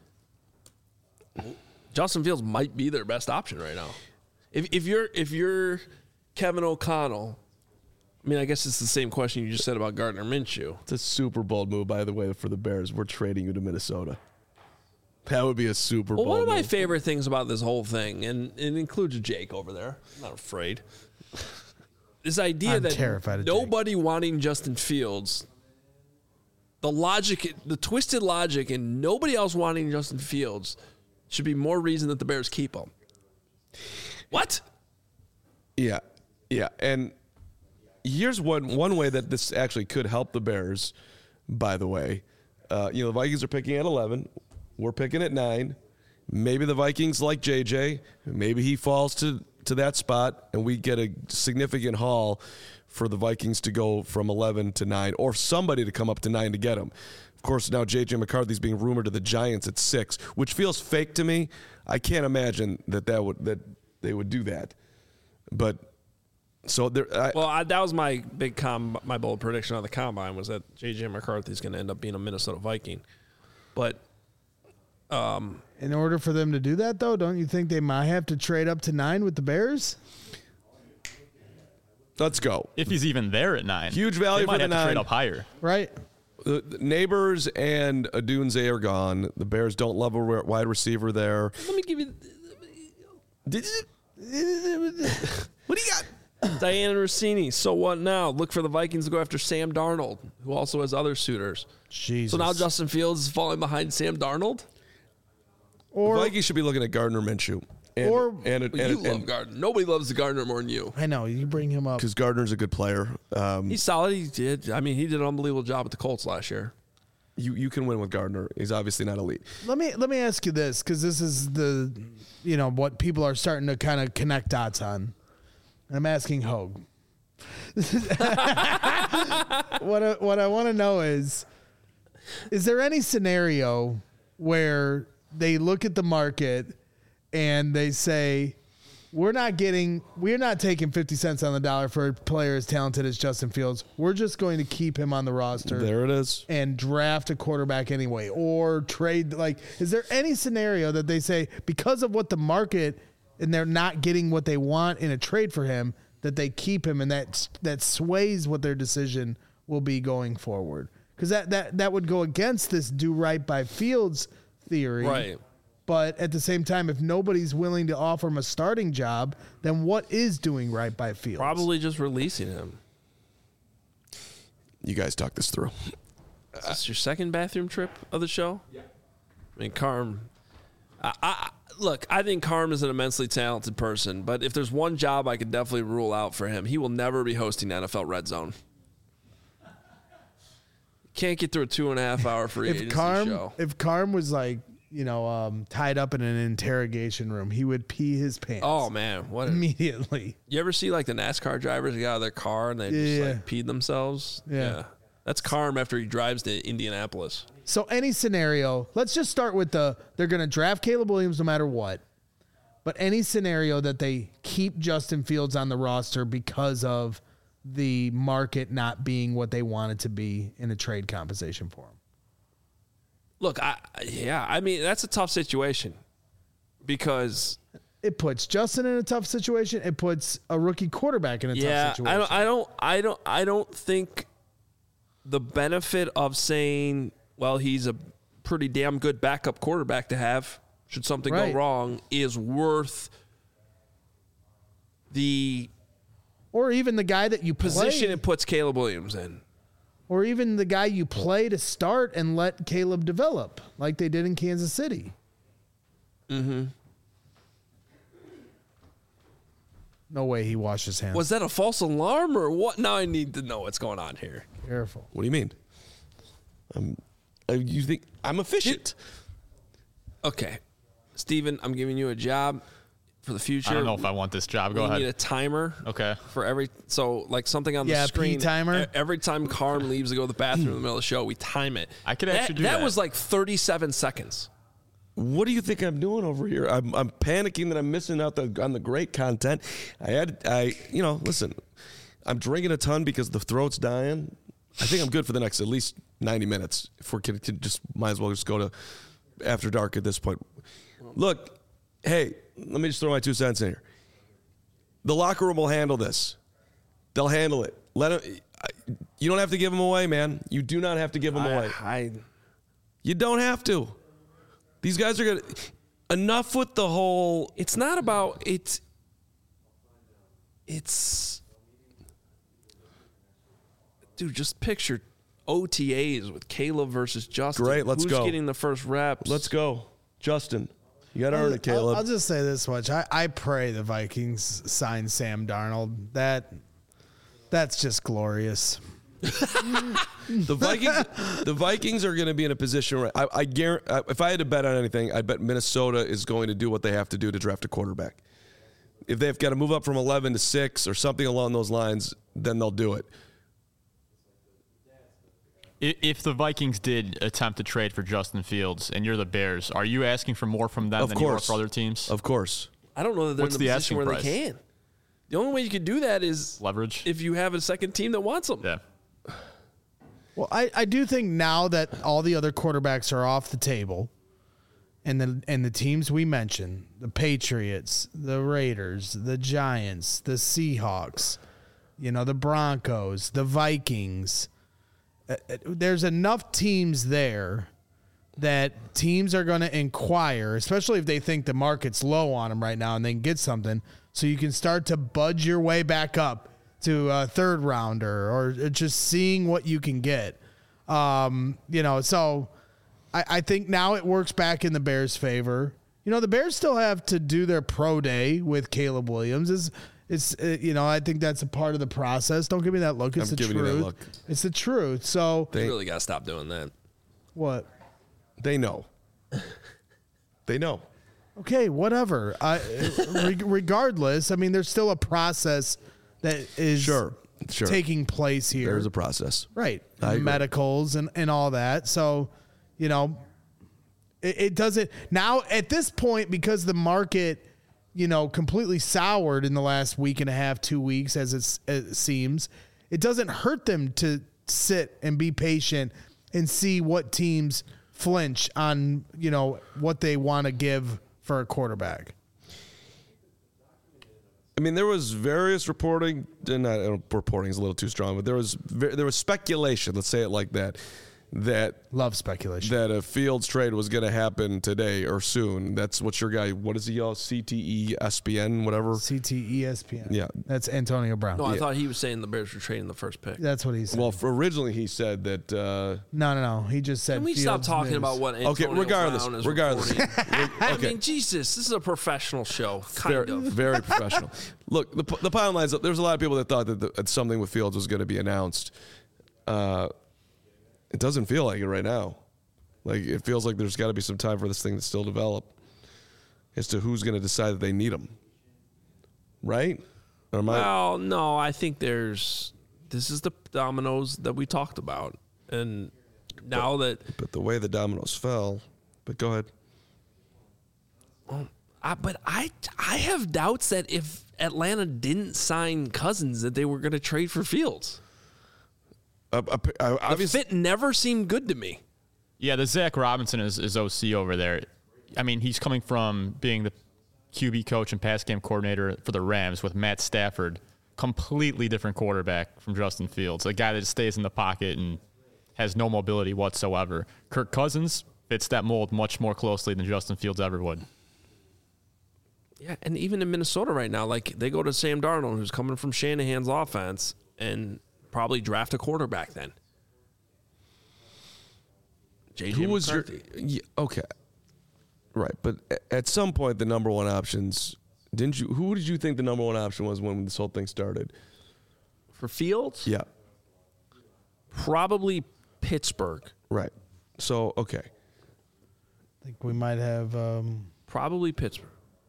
Justin Fields might be their best option right now. If if you're if you're Kevin O'Connell, I mean, I guess it's the same question you just said about Gardner Minshew. It's a super bold move, by the way, for the Bears. We're trading you to Minnesota. That would be a super Well, bold one of my move. favorite things about this whole thing, and it includes Jake over there, I'm not afraid, this idea I'm that terrified of Jake. nobody wanting Justin Fields, the logic, the twisted logic, and nobody else wanting Justin Fields should be more reason that the Bears keep him. What? Yeah, yeah, and here's one one way that this actually could help the Bears. By the way, uh, you know the Vikings are picking at eleven. We're picking at nine. Maybe the Vikings like J J. Maybe he falls to to that spot, and we get a significant haul for the Vikings to go from eleven to nine, or somebody to come up to nine to get him. Of course, now J J McCarthy's being rumored to the Giants at six, which feels fake to me. I can't imagine that that would that they would do that. But so there. I, Well, I, that was my big com, my bold prediction on the combine was that J J McCarthy is going to end up being a Minnesota Viking. But um, In order for them to do that, though, don't you think they might have to trade up to nine with the Bears? let's go. If he's even there at nine. Huge value they might for the have to trade nine. up higher. Right. The, the Neighbors and Adunze are gone. The Bears don't love a re- wide receiver there. let me give you. Did you, what do you got? Diana Rossini, so what now? Look for the Vikings to go after Sam Darnold, who also has other suitors. Jesus. So now Justin Fields is falling behind Sam Darnold? Or Vikings should be looking at Gardner Minshew. And, Or- and, Well, and, you love and, Gardner. Nobody loves Gardner more than you. I know you bring him up. because Gardner's a good player. Um, He's solid. He did. I mean, he did an unbelievable job at the Colts last year. you you can win with Gardner. He's obviously not elite. Let me let me ask you this, because this is the, you know, what people are starting to kind of connect dots on. And I'm asking Hogue. what I, what I want to know is, is there any scenario where they look at the market and they say, we're not getting, we're not taking fifty cents on the dollar for a player as talented as Justin Fields. We're just going to keep him on the roster. There it is. And draft a quarterback anyway, or trade. Like, is there any scenario that they say, because of what the market and they're not getting what they want in a trade for him, that they keep him, and that that sways what their decision will be going forward? Because that, that, that would go against this do right by Fields theory. Right. But at the same time, if nobody's willing to offer him a starting job, then what is doing right by Fields? Probably just releasing him. You guys talk this through. Is this your second bathroom trip of the show? Yeah. I mean, Carm. I, I, look, I think Carm is an immensely talented person, but if there's one job I could definitely rule out for him, he will never be hosting N F L Red Zone. Can't get through a two and a half hour free if agency Carm, show. If Carm was like, you know, um, tied up in an interrogation room, he would pee his pants. Oh man, what? A, immediately. you ever see like the NASCAR drivers that get out of their car and they just Yeah. like peed themselves? Yeah. That's Carm after he drives to Indianapolis. So any scenario, let's just start with the, they're going to draft Caleb Williams no matter what. But any scenario that they keep Justin Fields on the roster because of the market not being what they want it to be in a trade compensation for him. Look, I yeah, I mean that's a tough situation because it puts Justin in a tough situation. It puts a rookie quarterback in a yeah, tough situation. I don't, I don't, I don't, I don't think the benefit of saying, well, he's a pretty damn good backup quarterback to have should something Right. go wrong is worth the or even the guy that you position play, it puts Caleb Williams in. or even the guy you play to start and let Caleb develop like they did in Kansas City. Mm-hmm. No way he washed his hands. Was that a false alarm or what? Now I need to know what's going on here. Careful. What do you mean? Um, uh, you think I'm efficient? Okay, Steven, I'm giving you a job for the future. I don't know if I want this job. Go we ahead. need a timer. Okay. For every so like something on the Yeah, screen. P timer. e- Every time Carm leaves to go to the bathroom in the middle of the show, we time it. I could actually do that. that. was like thirty-seven seconds. What do you think I'm doing over here? I'm, I'm panicking that I'm missing out the, on the great content. I had, I, you know, listen, I'm drinking a ton because the throat's dying. I think I'm good for the next at least ninety minutes. If we're going to just might as well just go to after dark at this point. Look, hey, let me just throw my two cents in here. The locker room will handle this. They'll handle it. Let them, you don't have to give them away, man. You do not have to give them away. I, I You don't have to. These guys are going to... Enough with the whole... it's not about it's it's dude, just picture O T As with Caleb versus Justin. Great, let's Who's go. getting the first reps? Let's go. Justin, you got to earn it, I'll, Caleb. I'll just say this much. I, I pray the Vikings sign Sam Darnold. That That's just glorious. The Vikings, the Vikings are going to be in a position where I, I guarantee. If I had to bet on anything, I bet Minnesota is going to do what they have to do to draft a quarterback. If they've got to move up from eleven to six or something along those lines, then they'll do it. I- If the Vikings did attempt to trade for Justin Fields and you're the Bears, are you asking for more from them Of than you are course. for other teams? Of course. I don't know that they're What's in the, the position asking where price? they can. The only way you could do that is Leverage? if you have a second team that wants them. Yeah. Well, I, I do think now that all the other quarterbacks are off the table, and the and the teams we mentioned, the Patriots, the Raiders, the Giants, the Seahawks, you know, the Broncos, the Vikings, uh, uh, there's enough teams there that teams are going to inquire, especially if they think the market's low on them right now and they can get something, so you can start to budge your way back up to a third rounder or just seeing what you can get. Um, you know, so I, I think now it works back in the Bears' favor. You know, the Bears still have to do their pro day with Caleb Williams. Is it's uh, you know, I think that's a part of the process. Don't give me that look. It's I'm the giving you that truth. look. It's the truth. So You really got to stop doing that. what? They know. They know. Okay, whatever. I, re- regardless, I mean, there's still a process that is Sure. Sure. taking place here. There's a process. Right. I agree. Medicals and, and all that. So, you know, it, it doesn't now at this point, because the market, you know, completely soured in the last week and a half, two weeks, as it's, it seems, it doesn't hurt them to sit and be patient and see what teams flinch on, you know, what they want to give for a quarterback. I mean, there was various reporting. Not uh, reporting is a little too strong, but there was there was speculation. Let's say it like that. That Love speculation. that a Fields trade was going to happen today or soon. That's what your guy. What is he all? C T E S P N whatever. C T E S P N. Yeah. That's Antonio Brown. No, I thought he was saying the Bears were trading the first pick. That's what he said. Well, for originally he said that. Uh, no, no, no. He just said. Can we stop Fields talking news. about what Antonio okay, regardless, Brown is regardless. reporting? I okay. mean, Jesus, this is a professional show, kind very, of. very professional. Look, the the bottom line is that there's a lot of people that thought that, the, that something with Fields was going to be announced. Uh, it doesn't feel like it right now. Like, it feels like there's got to be some time for this thing to still develop as to who's going to decide that they need him. Right? Or am I, Well, no, I think there's. This is the dominoes that we talked about, and now that. but the way the dominoes fell. But go ahead. I, but I, I have doubts that if Atlanta didn't sign Cousins, that they were going to trade for Fields. Uh, uh, uh, The obviously, fit never seemed good to me. Yeah, the Zach Robinson is, is O C over there. I mean, he's coming from being the Q B coach and pass game coordinator for the Rams with Matt Stafford. Completely different quarterback from Justin Fields, a guy that stays in the pocket and has no mobility whatsoever. Kirk Cousins fits that mold much more closely than Justin Fields ever would. Yeah, and even in Minnesota right now, like they go to Sam Darnold, who's coming from Shanahan's offense, and probably draft a quarterback then. J J who was your. McCarthy. Yeah, okay. Right. But a- at some point, the number one options. Didn't you? Who did you think the number one option was when this whole thing started? For Fields? Yeah. Probably Pittsburgh. Right. So, okay. I think we might have. Um, Probably Pittsburgh.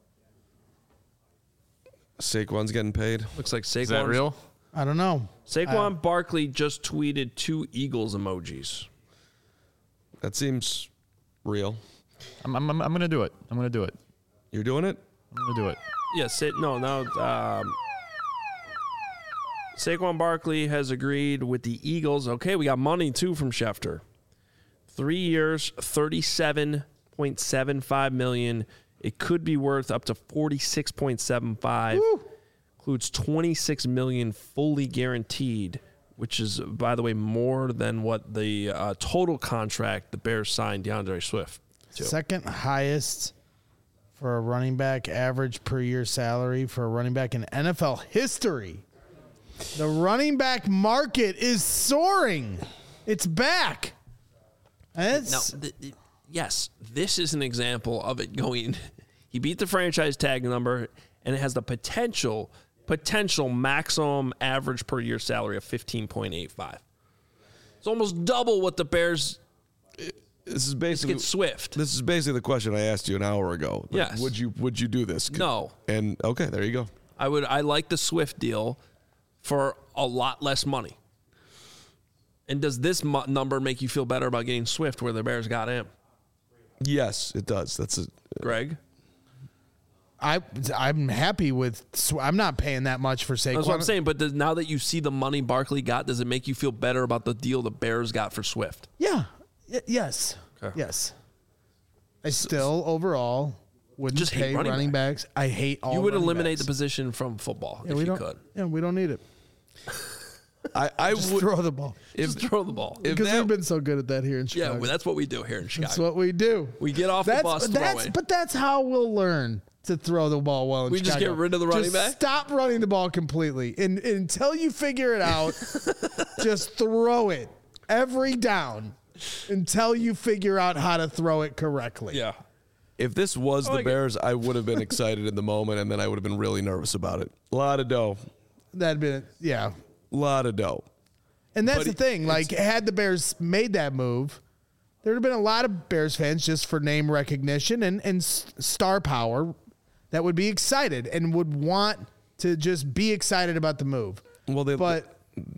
Saquon's getting paid. Looks like Saquon. Is that real? I don't know. Saquon Barkley just tweeted two Eagles emojis. That seems real. I'm, I'm, I'm going to do it. I'm going to do it. You're doing it? I'm going to do it. Yes, it, no, no. Um, Saquon Barkley has agreed with the Eagles. Okay, we got money too from Schefter. Three years, thirty-seven point seven five million. It could be worth up to forty-six point seven five. Includes twenty-six million fully guaranteed, which is, by the way, more than what the uh, total contract the Bears signed DeAndre Swift to. second highest for a running back average per year salary for a running back in N F L history. The running back market is soaring. It's back. And Now, it's, th- th- yes, this is an example of it going. He beat the franchise tag number, and it has the potential potential maximum average per year salary of fifteen point eight five. It's almost double what the Bears This is basically get Swift. This is basically the question I asked you an hour ago. Like, Yes. Would you Would you do this? No. And okay, there you go. I would. I like the Swift deal for a lot less money. And does this mo- number make you feel better about getting Swift where the Bears got him, Yes, it does. That's a. Greg? I I'm happy with. Sw- I'm not paying that much for Saquon. That's what I'm saying. But does, now that you see the money Barkley got, does it make you feel better about the deal the Bears got for Swift? Yeah. Y- yes. Okay. Yes. I still overall wouldn't Just hate pay running running, backs. I hate all. You would running eliminate backs. the position from football Yeah, if we you don't. could. Yeah, we don't need it. I, I Just would. throw the ball. If, Just throw the ball. if Because that- we've been so good at that here in Yeah, Chicago. well, that's what we do here in Chicago. That's what we do. We get off that's, the bus, throw that's, it. But that's how we'll learn to throw the ball well in We just Chicago. get rid of the running Just back? Stop running the ball completely. And, and until you figure it out, just throw it every down until you figure out how to throw it correctly. Yeah. If this was the like it. Bears, I would have been excited in the moment, and then I would have been really nervous about it. A lot of dough. That'd been, yeah. A lot of dough. And that's But the it- thing. Like, had the Bears made that move, there would have been a lot of Bears fans just for name recognition and, and s- star power that would be excited and would want to just be excited about the move. Well, they, But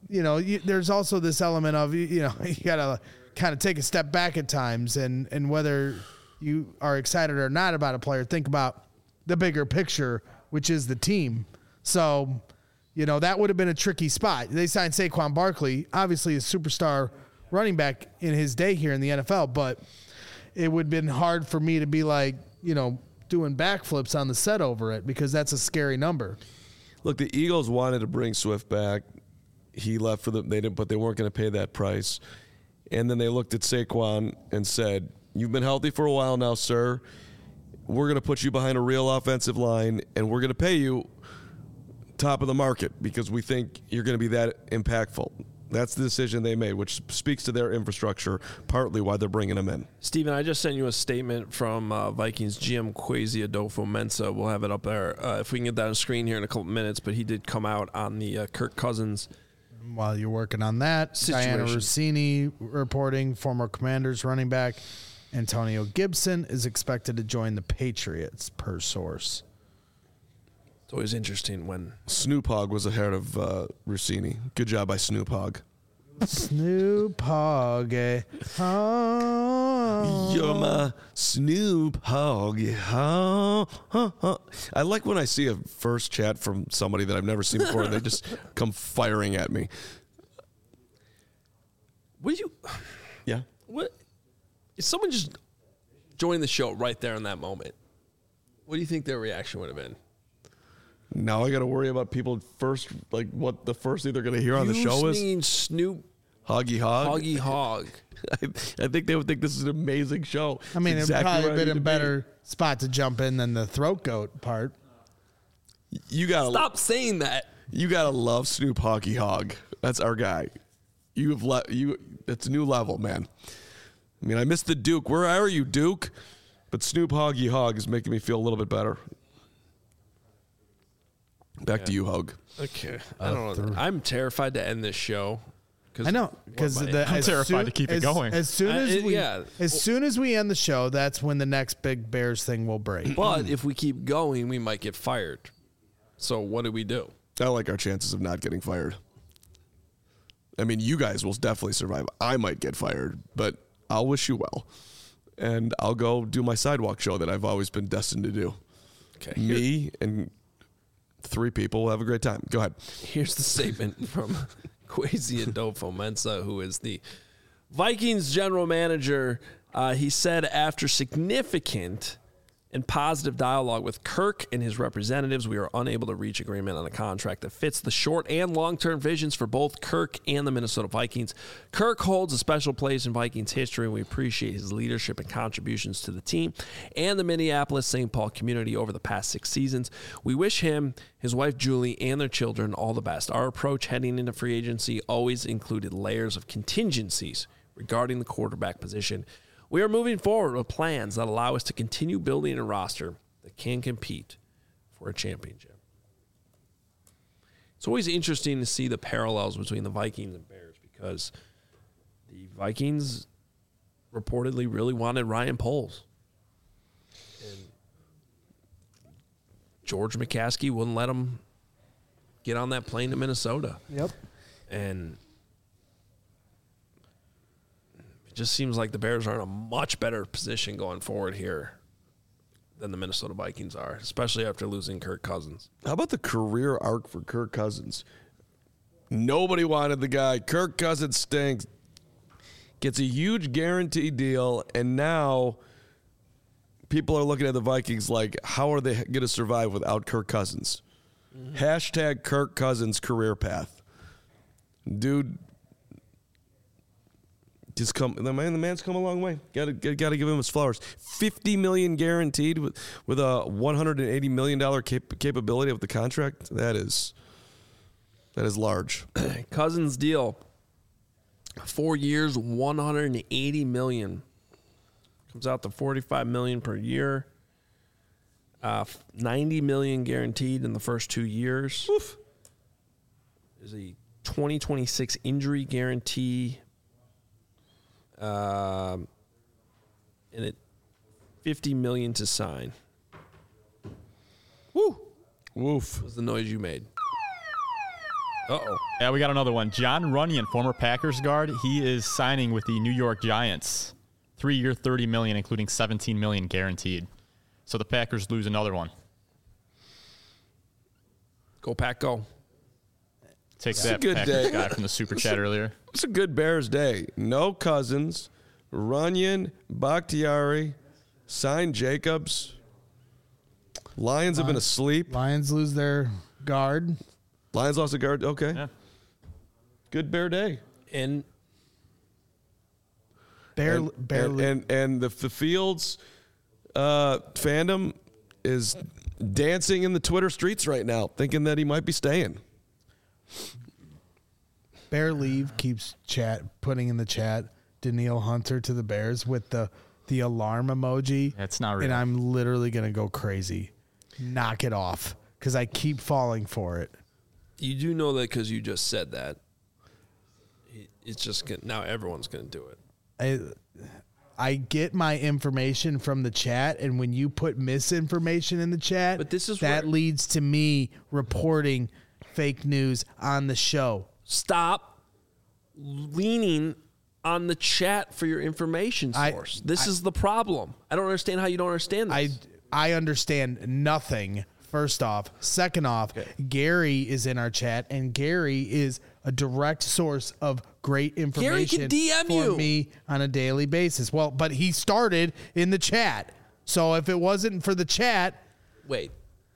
you know, you, there's also this element of, you, you know, you got to kind of take a step back at times, and, and whether you are excited or not about a player, think about the bigger picture, which is the team. So, you know, that would have been a tricky spot. They signed Saquon Barkley, obviously a superstar running back in his day here in the N F L, but it would have been hard for me to be like, you know, doing backflips on the set over it, because that's a scary number. Look, the Eagles wanted to bring Swift back. He left for them. They didn't, but they weren't going to pay that price. And then they looked at Saquon and said, "You've been healthy for a while now, sir. We're going to put you behind a real offensive line, and we're going to pay you top of the market because we think you're going to be that impactful." That's the decision they made, which speaks to their infrastructure, partly why they're bringing him in. Steven, I just sent you a statement from uh, Vikings G M Kwesi Adofo-Mensah. We'll have it up there uh, if we can get that on screen here in a couple minutes, but he did come out on the uh, Kirk Cousins. While you're working on that, situation. Diana Rossini reporting, former Commanders running back Antonio Gibson is expected to join the Patriots, per source. It's always interesting when Snoop Hogg was ahead of uh, Rossini. Good job by Snoop Hogg. Snoop Hogg. Eh? Oh. You're my Snoop Hogg. Oh, oh, oh. I like when I see a first chat from somebody that I've never seen before and they just come firing at me. What do you Yeah. what if someone just joined the show right there in that moment? What do you think their reaction would have been? Now I got to worry about people first, like what the first thing they're going to hear on the show is singing Snoop Hoggy Hog. Hoggy Hog. I, I think they would think this is an amazing show. I mean, It's it exactly probably where I been need a to be. better spot to jump in than the throat goat part. You gotta Stop saying that. You gotta love Snoop Hoggy Hog. That's our guy. You have le- you. It's a new level, man. I mean, I miss the Duke. Where are you, Duke? But Snoop Hoggy Hog is making me feel a little bit better. Back to you, Hug. Okay. I don't know. I'm terrified to end this show. I know, because What, the, my- I'm as terrified soon- to keep it as- going. As soon Uh, as it- we, yeah. as soon as we end the show, that's when the next big Bears thing will break. But if we keep going, we might get fired. So what do we do? I like our chances of not getting fired. I mean, you guys will definitely survive. I might get fired, but I'll wish you well. And I'll go do my sidewalk show that I've always been destined to do. Okay. Me and three people will have a great time. Go ahead. Here's the statement from Kwesi Adofo-Mensah, who is the Vikings general manager. Uh, he said after significant and positive dialogue with Kirk and his representatives, we are unable to reach agreement on a contract that fits the short and long-term visions for both Kirk and the Minnesota Vikings. Kirk holds a special place in Vikings history, and we appreciate his leadership and contributions to the team and the Minneapolis-Saint Paul community over the past six seasons. We wish him, his wife Julie, and their children all the best. Our approach heading into free agency always included layers of contingencies regarding the quarterback position. We are moving forward with plans that allow us to continue building a roster that can compete for a championship. It's always interesting to see the parallels between the Vikings and Bears because the Vikings reportedly really wanted Ryan Poles. And George McCaskey wouldn't let him get on that plane to Minnesota. Yep. And just seems like the Bears are in a much better position going forward here than the Minnesota Vikings are, especially after losing Kirk Cousins. How about the career arc for Kirk Cousins? Nobody wanted the guy. Kirk Cousins stinks. Gets a huge guarantee deal, and now people are looking at the Vikings like, how are they going to survive without Kirk Cousins? Mm-hmm. Hashtag Kirk Cousins career path. Dude, just come. The man, the man's come a long way. Got to, got to give him his flowers. Fifty million guaranteed with with a one hundred and eighty million dollar cap- capability of the contract. That is, that is large. Cousins deal, four years, one hundred and eighty million. Comes out to forty-five million per year. Uh, ninety million guaranteed in the first two years. Oof. There's a twenty twenty-six injury guarantee. Um, and it fifty million to sign. Woo! Woof. Was the noise you made? Uh-oh. Yeah, we got another one. John Runyon, former Packers guard, he is signing with the New York Giants. Three-year, thirty million dollars, including seventeen million dollars guaranteed. So the Packers lose another one. Go, Pack, go. Take It's that, a good Packers day. guy from the super chat earlier. It's a good Bears day. No Cousins, Runyon, Bakhtiari, signed Jacobs. Lions have been asleep. Lions lose their guard. Lions lost a guard. Okay. Yeah. Good Bear day. And Bear, and, bear and, and, and the, the Fields uh, fandom is dancing in the Twitter streets right now, thinking that he might be staying. Bear Leave keeps chat putting in the chat Danielle Hunter to the Bears with the the alarm emoji. That's not real. And I'm literally gonna go crazy. Knock it off, because I keep falling for it. you do know that because you just said that. It's just gonna, now everyone's going to do it. I I get my information from the chat, and when you put misinformation in the chat, But this is that where- leads to me reporting fake news on the show. Stop leaning on the chat for your information I- source. this I- is the problem. I don't understand how you don't understand this. I I understand nothing. First off, second off, Gary is in our chat, and Gary is a direct source of great information D M for you. me on a daily basis. Well, but he started in the chat, so if it wasn't for the chat, Wait.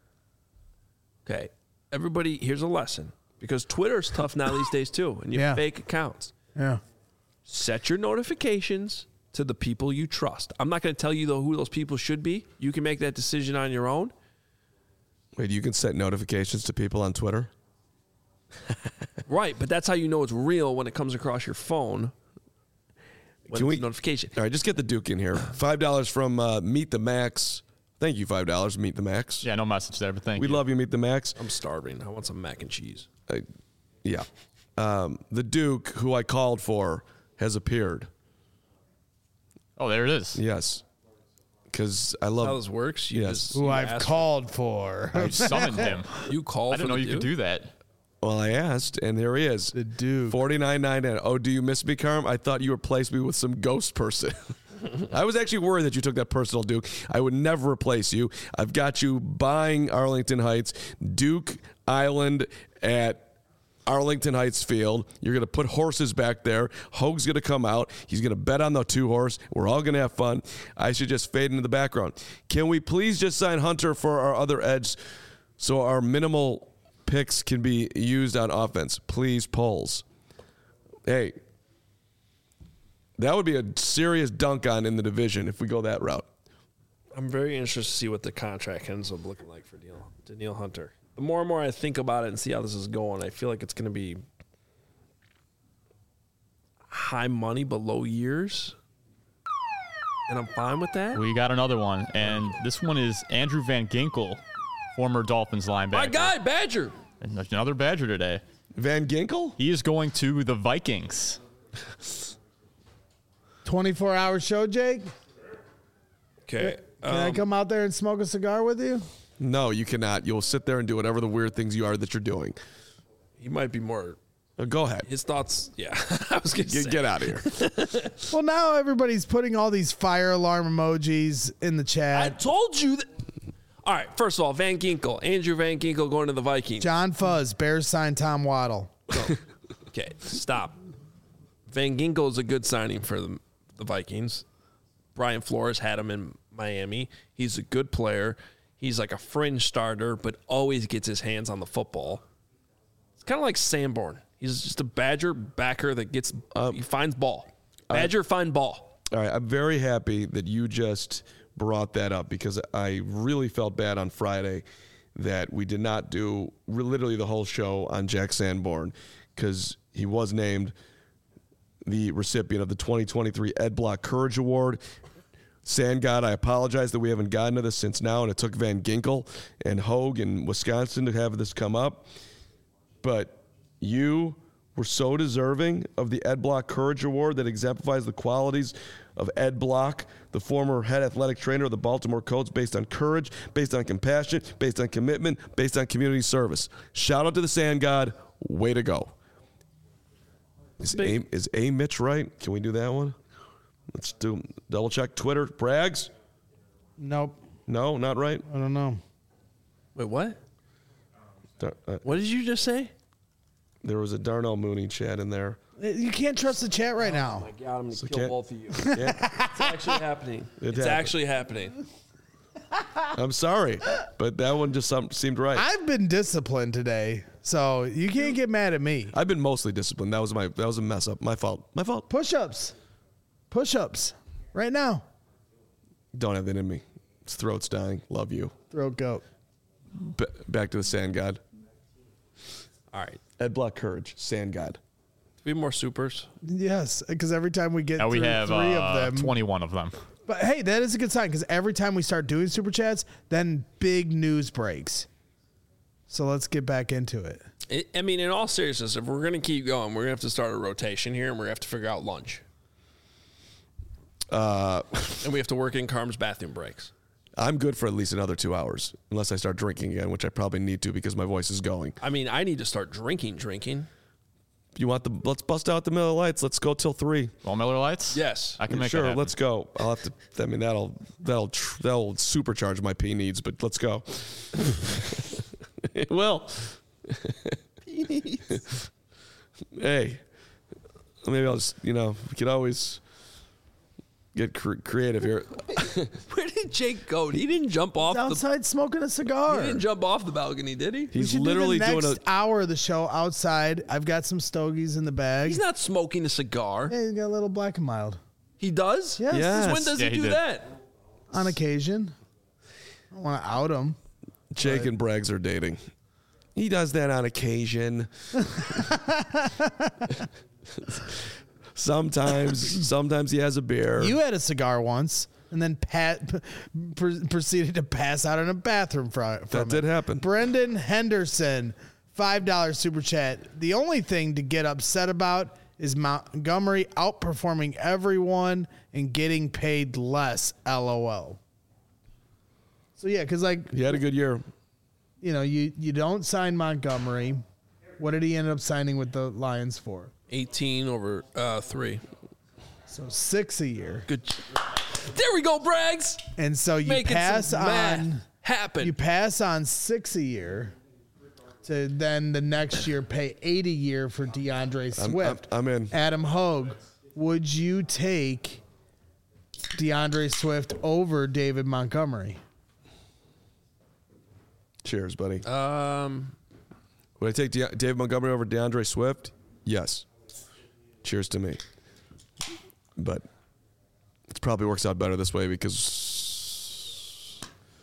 Okay. Everybody, here's a lesson. Because Twitter's tough now these days too, and you have Yeah. fake accounts. yeah, Set your notifications to the people you trust. I'm not going to tell you though who those people should be. You can make that decision on your own. Wait, you can set notifications to people on Twitter? Right, but that's how you know it's real when it comes across your phone. When Can it's we- a notification? All right, just get the Duke in here. five dollars from uh, Meet the Max. Thank you, five dollars, Meet the Max. Yeah, no message there, but thank We you. love you, Meet the Max. I'm starving. I want some mac and cheese. Uh, yeah. Um, the Duke, who I called for, has appeared. Oh, there it is. Yes. Because I love How this works? You Yes. just, who you I've ask- called for. You summoned him. You call. I didn't for know the you could Duke? do that. Well, I asked, and here he is. The Duke. forty-nine ninety-nine. Oh, do you miss me, Carm? I thought you replaced me with some ghost person. I was actually worried that you took that personal, Duke. I would never replace you. I've got you buying Arlington Heights, Duke Island at Arlington Heights Field. You're going to put horses back there. Hoag's going to come out. He's going to bet on the two horse. We're all going to have fun. I should just fade into the background. Can we please just sign Hunter for our other edge so our minimal picks can be used on offense? Please, polls. Hey, that would be a serious dunk on in the division if we go that route. I'm very interested to see what the contract ends up looking like for Danielle, Danielle Hunter. The more and more I think about it and see how this is going, I feel like it's going to be high money but low years, and I'm fine with that. We got another one, and this one is Andrew Van Ginkel, former Dolphins linebacker. My guy, Badger. And another Badger today. Van Ginkel? He is going to the Vikings. twenty-four hour show, Jake. Okay. Can I come out there and smoke a cigar with you? No, you cannot. You'll sit there and do whatever the weird things you are that you're doing. He might be more. Uh, Go ahead. His thoughts. Yeah, I was going to Get, say. get out of here. Well, now everybody's putting all these fire alarm emojis in the I chat. told you that. All right. First of all, Van Ginkel, Andrew Van Ginkel going to the Vikings. John Fuzz, Bears sign Tom Waddle. Okay, stop. Van Ginkel is a good signing for the, the Vikings. Brian Flores had him in Miami. He's a good player. He's like a fringe starter, but always gets his hands on the football. It's kind of like Sanborn. He's just a Badger backer that gets he finds ball. Badger find ball. All right, I'm very happy that you just brought that up because I really felt bad on Friday that we did not do literally the whole show on Jack Sanborn because he was named the recipient of the twenty twenty-three Ed Block Courage Award. Sandgod, I apologize that we haven't gotten to this since now, and it took Van Ginkel and Hoag in Wisconsin to have this come up. But you were so deserving of the Ed Block Courage Award that exemplifies the qualities of Ed Block, the former head athletic trainer of the Baltimore Colts, based on courage, based on compassion, based on commitment, based on community service. Shout out to the Sand God. way to go. Is A, is A Mitch right? Can we do that one? Let's do double check. Twitter, Braggs? Nope. No, not right. I don't know. Wait, what? Dar- uh, What did you just say? there was a Darnell Mooney chat in there. You can't trust the chat right now. Oh my God, I'm going to So kill can't- both of you. Yeah, It's actually happening. It it's happened. actually happening. I'm sorry, but that one just some, seemed right. I've been disciplined today, so you can't get mad at me. I've been mostly disciplined. That was my that was a mess up. My fault. My fault. Push-ups. Push-ups. Right now. Don't have that in me. His throat's dying. Love you. Throat goat. B- back to the Sand God. All right. Ed Block Courage. Sand God. Do we have more supers? Yes, because every time we get Now we through have three uh, of them. twenty-one of them. But hey, that is a good sign because every time we start doing super chats, then big news breaks. So let's get back into it. It, I mean, in all seriousness, if we're going to keep going, we're going to have to start a rotation here, and we're going to have to figure out lunch. Uh, and we have to work in Carm's bathroom breaks. I'm good for at least another two hours, unless I start drinking again, which I probably need to because my voice is going. I mean, I need to start drinking, drinking. You want the? Let's bust out the Miller Lights. Let's go till three. Well, Miller Lights? Yes. I can make sure. that happen. Let's go. I'll have to. I mean, that'll that'll tr- that'll supercharge my pee needs. But let's go. It will. Pee needs. Hey, maybe I'll just. You know, we could always get cr- creative here. Where did Jake go? He didn't jump off the. Outside smoking a cigar. He didn't jump off the balcony, did he? We He's should literally do the doing next a. hour of the show outside. I've got some stogies in the bag. He's not smoking a cigar. Yeah, he's got a little black and mild. He does? Yes. Yes. Since when does Yeah, he he do did. that? On occasion. I don't want to out him. Jake and Braggs are dating. He does that on occasion. Sometimes, sometimes he has a beer. You had a cigar once and then Pat p- pr- proceeded to pass out in a bathroom fr- from That did it. happen. Brendan Henderson, five dollars super chat. The only thing to get upset about is Montgomery outperforming everyone and getting paid less. LOL. So yeah, because like He had a good year. you know, you you don't sign Montgomery. What did he end up signing with the Lions for? eighteen over uh, three. So six a year. Good. There we go, Braggs. And so you Making pass some math on happen. you pass on six a year to then the next year pay eight a year for DeAndre I'm- Swift. I'm in. Adam Hogue, would you take DeAndre Swift over David Montgomery? Cheers, buddy. um, Would I take De- David Montgomery over DeAndre Swift? Yes. Cheers to me. But it probably works out better this way because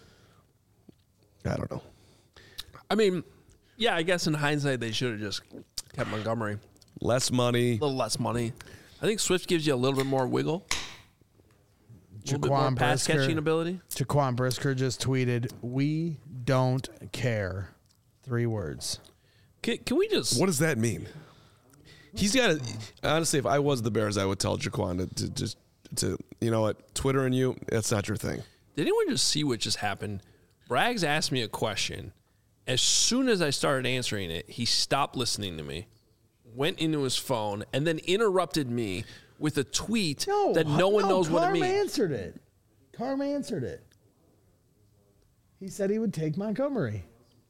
I don't know. I mean, yeah, I guess in hindsight they should have just kept Montgomery. Less money. A little less money. I think Swift gives you a little bit more wiggle. A little bit more Jaquan pass Brisker. catching ability. Jaquan Brisker just tweeted, "We don't care." Three words. Can, can we just? What does that mean? He's got to. Honestly, if I was the Bears, I would tell Jaquan to, to just to you know what, Twitter and you, that's not your thing. Did anyone just see what just happened? Braggs asked me a question. As soon as I started answering it, he stopped listening to me, went into his phone, and then interrupted me with a tweet that no one knows what it Carm means. answered it. Carm answered it. He said he would take Montgomery.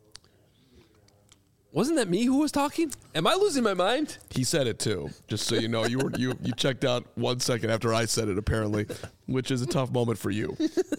Wasn't that me who was talking? Am I losing my mind? He said it too. Just so you know, you were you you checked out one second after I said it, apparently, which is a tough moment for you.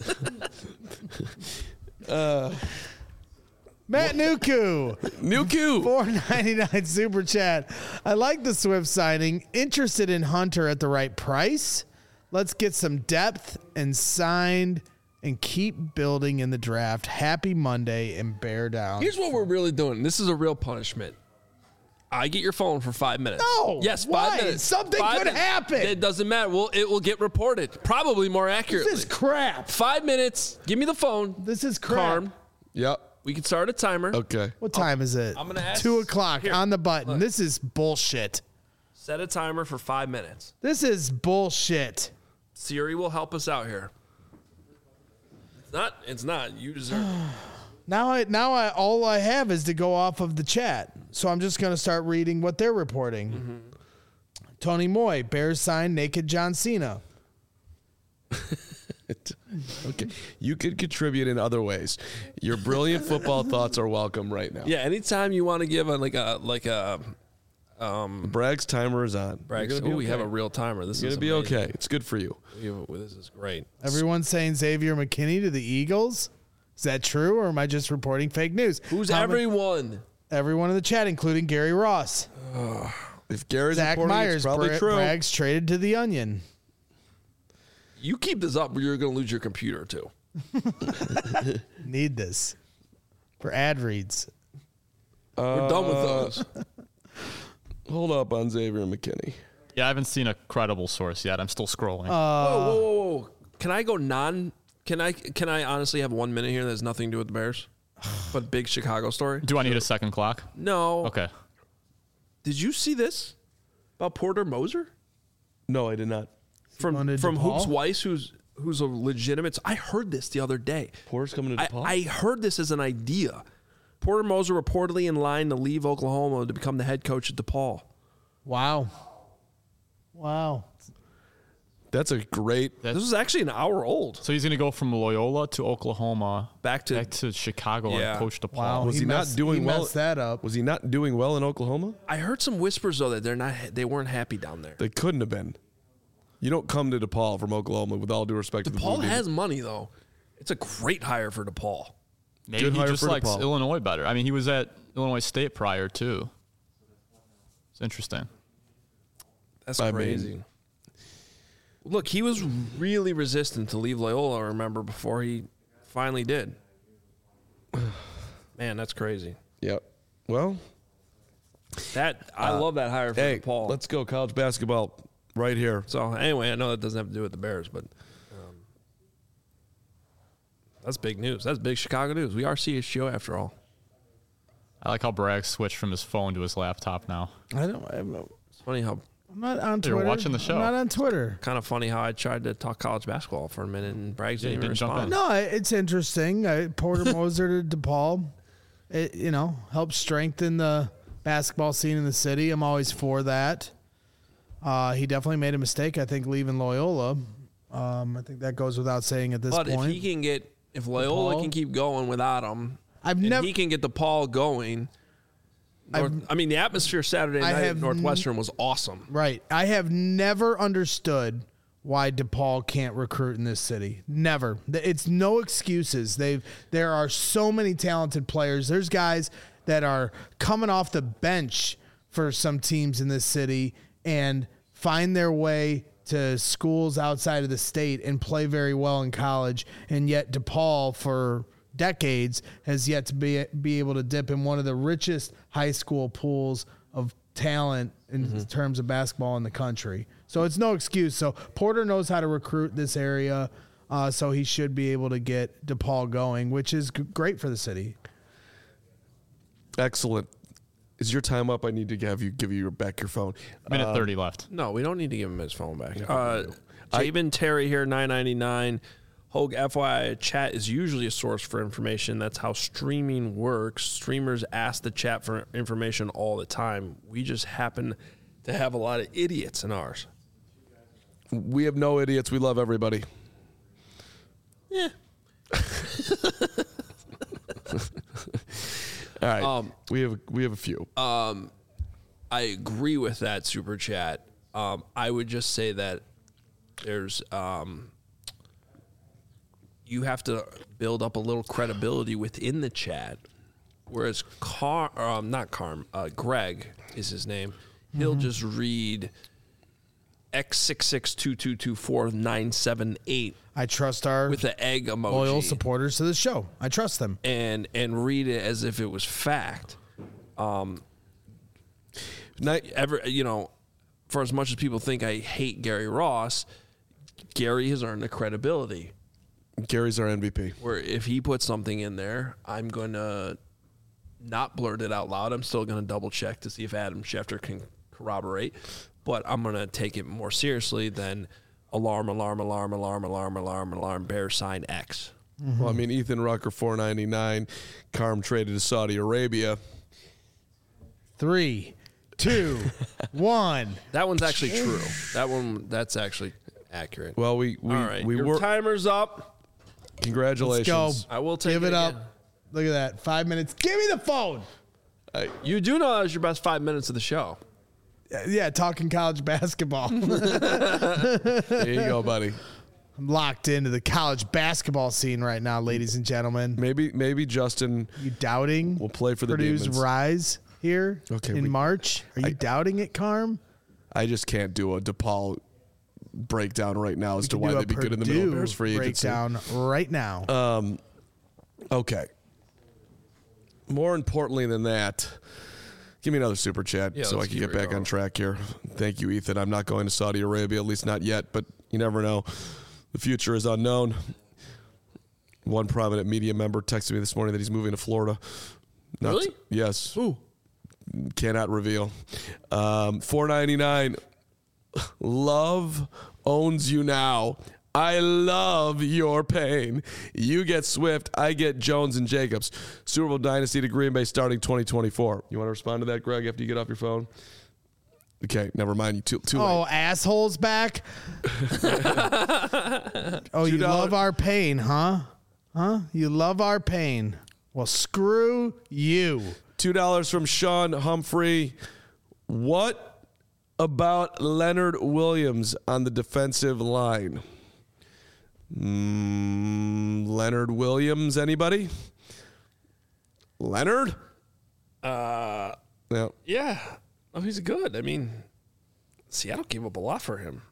uh, Matt Nuku, Nuku. four ninety-nine super chat. I like the Swift signing. Interested in Hunter at the right price. Let's get some depth and signed and keep building in the draft. Happy Monday and bear down. Here's what we're really doing. This is a real punishment. I get your phone for five minutes. No, Yes, why? five minutes. Something Five could minutes. happen. It doesn't matter. Well, it will get reported. Probably more accurately. This is crap. Five minutes. Give me the phone. This is crap. Carm. Yep. We can start a timer. Okay. What time is it? I'm gonna ask- Two o'clock Here, on the button. look. This is bullshit. Set a timer for five minutes. This is bullshit. Siri will help us out here. It's not. It's not. You deserve it. Now I now I all I have is to go off of the chat. so I'm just going to start reading what they're reporting. Mm-hmm. Tony Moy, Bears signed naked John Cena. Okay, you could contribute in other ways. Your brilliant football thoughts are welcome right now. Yeah, anytime you want to give a like a like a um Bragg's timer is on. Bragg's. Oh, okay. We have a real timer. This You're is gonna be amazing. okay. It's good for you. This is great. Everyone's saying Xavier McKinney to the Eagles. Is that true, or am I just reporting fake news? Who's How everyone? Ma- everyone in the chat, including Gary Ross. Uh, if Gary's Zach reporting, Myers, it's probably Bra- true. Bragg's traded to the Onion. You keep this up, or you're going to lose your computer too. Need this for ad reads. Uh, We're done with those. Hold up on Xavier McKinney. Yeah, I haven't seen a credible source yet. I'm still scrolling. Uh, whoa, whoa, whoa, whoa! Can I go non? Can I? Can I honestly have one minute here that has nothing to do with the Bears, but big Chicago story? Do I need a second clock? No. Okay. Did you see this about Porter Moser No, I did not. from Going to from DePaul? Hoops Weiss, who's who's a legitimate? I heard this the other day. Porter's coming to I, DePaul? I heard this as an idea. Porter Moser reportedly in line to leave Oklahoma to become the head coach at DePaul. Wow. Wow. That's a great. This was actually an hour old. So he's going to go from Loyola to Oklahoma, Back to back to Chicago Yeah. and coach DePaul. Wow. Was he not messed, doing he well- messed that up. Was he not doing well in Oklahoma? I heard some whispers though that they're not they weren't happy down there. They couldn't have been. You don't come to DePaul from Oklahoma, with all due respect to the DePaul Blue has money though. It's a great hire for DePaul. Maybe Good he hire just for likes DePaul. Illinois better. I mean, he was at Illinois State prior too. It's interesting. That's I crazy. mean- Look, he was really resistant to leave Loyola, I remember, before he finally did. Man, that's crazy. Yep. Well, That I Uh, love that hire for hey, DePaul. let's go college basketball right here. So anyway, I know that doesn't have to do with the Bears, but um, that's big news. That's big Chicago news. We are C H G O after all. I like how Bragg switched from his phone to his laptop now. I don't. I'm It's funny how not on You're Twitter. watching the show. I'm not on Twitter. kind of funny how I tried to talk college basketball for a minute and Braggs Yeah, didn't you even didn't jump respond. in. No, it's interesting. Uh, Porter Moser to DePaul, it, you know, helps strengthen the basketball scene in the city. I'm always for that. Uh, he definitely made a mistake, I think, leaving Loyola. Um, I think that goes without saying at this But point. if he can get, if Loyola DePaul? can keep going without him, I've and never- he can get DePaul going. North, I mean, the atmosphere Saturday I night at have Northwestern was awesome. Right. I have never understood why DePaul can't recruit in this city. Never. It's no excuses. They've there are so many talented players. There's guys that are coming off the bench for some teams in this city and find their way to schools outside of the state and play very well in college. And yet DePaul for decades has yet to be be able to dip in one of the richest high school pools of talent in Mm-hmm. terms of basketball in the country. So it's no excuse. So Porter knows how to recruit this area, uh, so he should be able to get DePaul going, which is g- great for the city. Excellent. Is your time up? I need to have you give you your, back your phone. Minute Uh, thirty left. No, we don't need to give him his phone back. Uh, Jabin Terry here, nine ninety-nine. Hogue, F Y I, chat is usually a source for information. That's how streaming works. Streamers ask the chat for information all the time. We just happen to have a lot of idiots in ours. We have no idiots. We love everybody. Yeah. All right. Um, we have we have a few. I agree with that super chat. Um, I would just say that there's um, you have to build up a little credibility within the chat. Whereas Car, um, not Carm, uh, Greg is his name. He'll just read X six six two two two four nine seven eight I trust our with the egg emoji loyal supporters to the show. I trust them. and and read it as if it was fact. Night, Ever, you know, for as much as people think I hate Gary Ross, Gary has earned the credibility Gary's our M V P. where if he puts something in there, I'm going to not blurt it out loud. I'm still going to double check to see if Adam Schefter can corroborate, but I'm going to take it more seriously than alarm, alarm, alarm, alarm, alarm, alarm, alarm, bear sign X. Well, I mean, Ethan Rucker, four ninety nine. Carm traded to Saudi Arabia. three, two, one. That one's actually true. That one, that's actually accurate. Well, we we All right, we your were. timer's up. Congratulations. Let's go. I will take Give it it up. again. Look at that. Five minutes. Give me the phone. You do know that was your best five minutes of the show. Yeah, talking college basketball. There you go, buddy. I'm locked into the college basketball scene right now, ladies and gentlemen. Maybe maybe Justin You doubting will play for the Purdue's Demons. rise here Okay, in we- March? Are you I- doubting it, Carm? I just can't do a DePaul breakdown right now as to Can why do a they'd be good in the middle of Purdue Bears free agency. breakdown right now. Um, okay. More importantly than that, give me another super chat Yeah, so I let's can keep get it back going. on track here. Thank you, Ethan. I'm not going to Saudi Arabia, at least not yet, but you never know. The future is unknown. One prominent media member texted me this morning that he's moving to Florida. Not Really? Yes. Ooh. Cannot reveal. Um, four ninety-nine. Love owns you now. I love your pain. You get Swift. I get Jones and Jacobs. Super Bowl Dynasty to Green Bay starting twenty twenty-four. You want to respond to that, Greg, after you get off your phone? Okay, never mind. You too, too Oh, late. assholes back. Oh, you Two dollars. love our pain, huh? Huh? You love our pain. Well, screw you. two dollars from Sean Humphrey. What about Leonard Williams on the defensive line? Mm, Leonard Williams, anybody? Leonard? Uh, No. yeah. Oh, he's good. I mean, Seattle gave up a lot for him.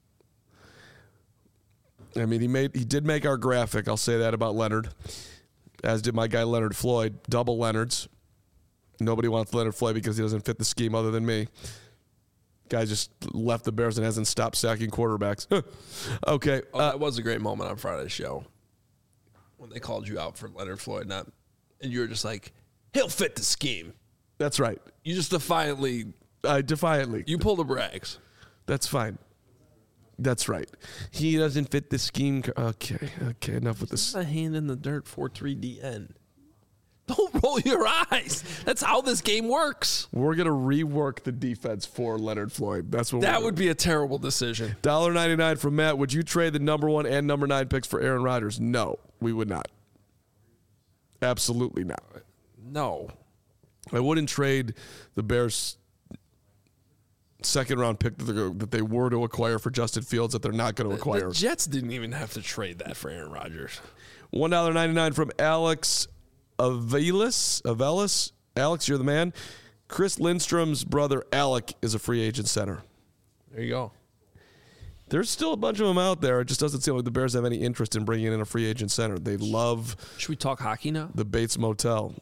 I mean, he made he did make our graphic. I'll say that about Leonard, as did my guy Leonard Floyd. Double Leonards. Nobody wants Leonard Floyd because he doesn't fit the scheme other than me. Guy just left the Bears and hasn't stopped sacking quarterbacks. Okay. Oh, uh, that was a great moment on Friday's show when they called you out for Leonard Floyd, not, and you were just like, he'll fit the scheme. that's right. You just defiantly, I defiantly. you pull the brags. That's fine. That's right. He doesn't fit the scheme. co- Okay. Okay. Enough with this. A hand in the dirt, four three D N. Don't roll your eyes. That's how this game works. We're gonna rework the defense for Leonard Floyd. That's what That we're would be a terrible decision. one dollar ninety-nine from Matt. Would you trade the number one and number nine picks for Aaron Rodgers? No, we would not. Absolutely not. No. I wouldn't trade the Bears' second round pick that they, that they were to acquire for Justin Fields that they're not going to acquire. The Jets didn't even have to trade that for Aaron Rodgers. one dollar ninety-nine from Alex Avelis. Avelis. Alex, you're the man. Chris Lindstrom's brother, Alec, is a free agent center. There you go. There's still a bunch of them out there. It just doesn't seem like the Bears have any interest in bringing in a free agent center. They love Should we talk hockey now? the Bates Motel.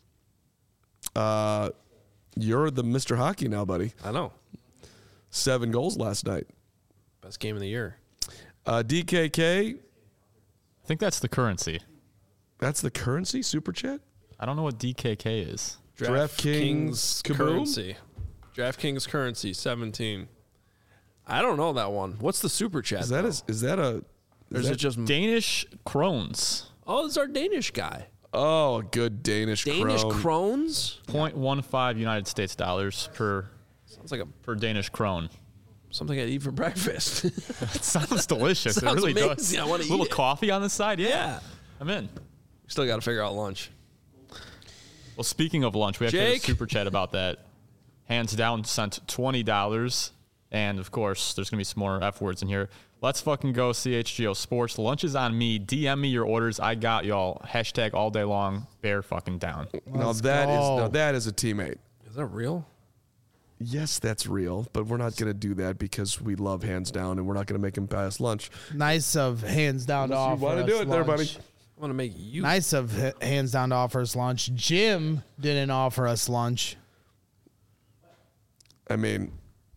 Uh, you're the Mister Hockey now, buddy. I know. Seven goals last night. Best game of the year. Uh, D K K, I think that's the currency. that's the currency, Super Chat? I don't know what D K K is. DraftKings Kaboom? currency. DraftKings currency seventeen. I don't know that one. What's the super chat? Is that, though? a, is that a... Or is that- it just Danish krones. Oh, it's our Danish guy. Oh, a good Danish, Danish crone. crones? zero point one five United States dollars per Sounds like a per Danish krone. something I eat for breakfast. It sounds delicious. Sounds it really does. amazing. I wanna A little eat it. coffee on the side. Yeah, Yeah. I'm in. Still got to figure out lunch. Well, speaking of lunch, we actually have a Jake? super chat about that. Hands down sent twenty dollars. And, of course, there's going to be some more F words in here. Let's fucking go, C H G O Sports. Lunch is on me. D M me your orders. I got y'all. Hashtag all day long. Bear fucking down. Now Let's that is go. now that is a teammate. Is that real? Yes, that's real, but we're not going to do that because we love hands down, and we're not going to make him pass lunch. Nice of hands down to Unless you offer wanna us do it there, lunch. buddy. I want to make you. Nice of h- hands down to offer us lunch. Jim didn't offer us lunch. I mean,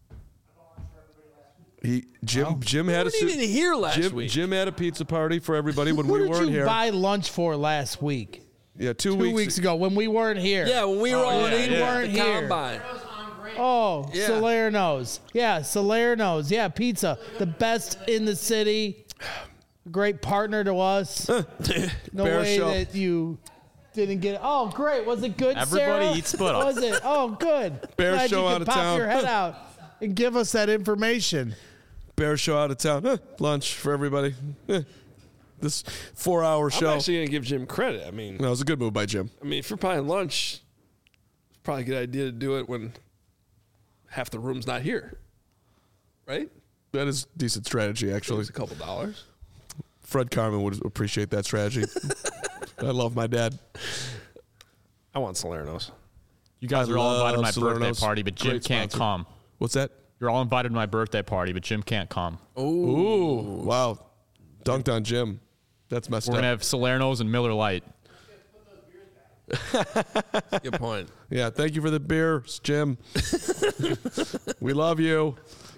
he Jim Jim You had a weren't even su- here last Jim, week. Jim had a pizza party for everybody when What we did weren't you here. buy lunch for last week? yeah, two, Two weeks, weeks, ago when we weren't here. Yeah, when we were all yeah, in yeah. the weren't here. combine. Oh, Yeah. Salerno's. Yeah, Salerno's. Yeah, pizza. The best in the city. Great partner to us. No Bear way show. that you Didn't get it. Oh, great. Was it good, Everybody Sarah? eats split up. Was it? Oh, good. Bear Glad show you out could of pop town. your head out and give us that information. Bear show out of town. Huh, lunch for everybody. Eh, this four-hour show. I'm actually going to give Jim credit. I mean, No, it was a good move by Jim. I mean, if you're buying lunch, it's probably a good idea to do it when half the room's not here, right? That is decent strategy, actually. It's a couple dollars. Fred Carmen would appreciate that strategy. I love my dad. I want Salerno's. You guys I are all invited to my love birthday Salerno's. party, but Jim Great can't sponsor. come. What's that? You're all invited to my birthday party, but Jim can't come. Ooh, wow. Dunked on Jim. That's messed We're up. going to have Salerno's and Miller Lite. Good point. Yeah, thank you for the beers, Jim. We love you.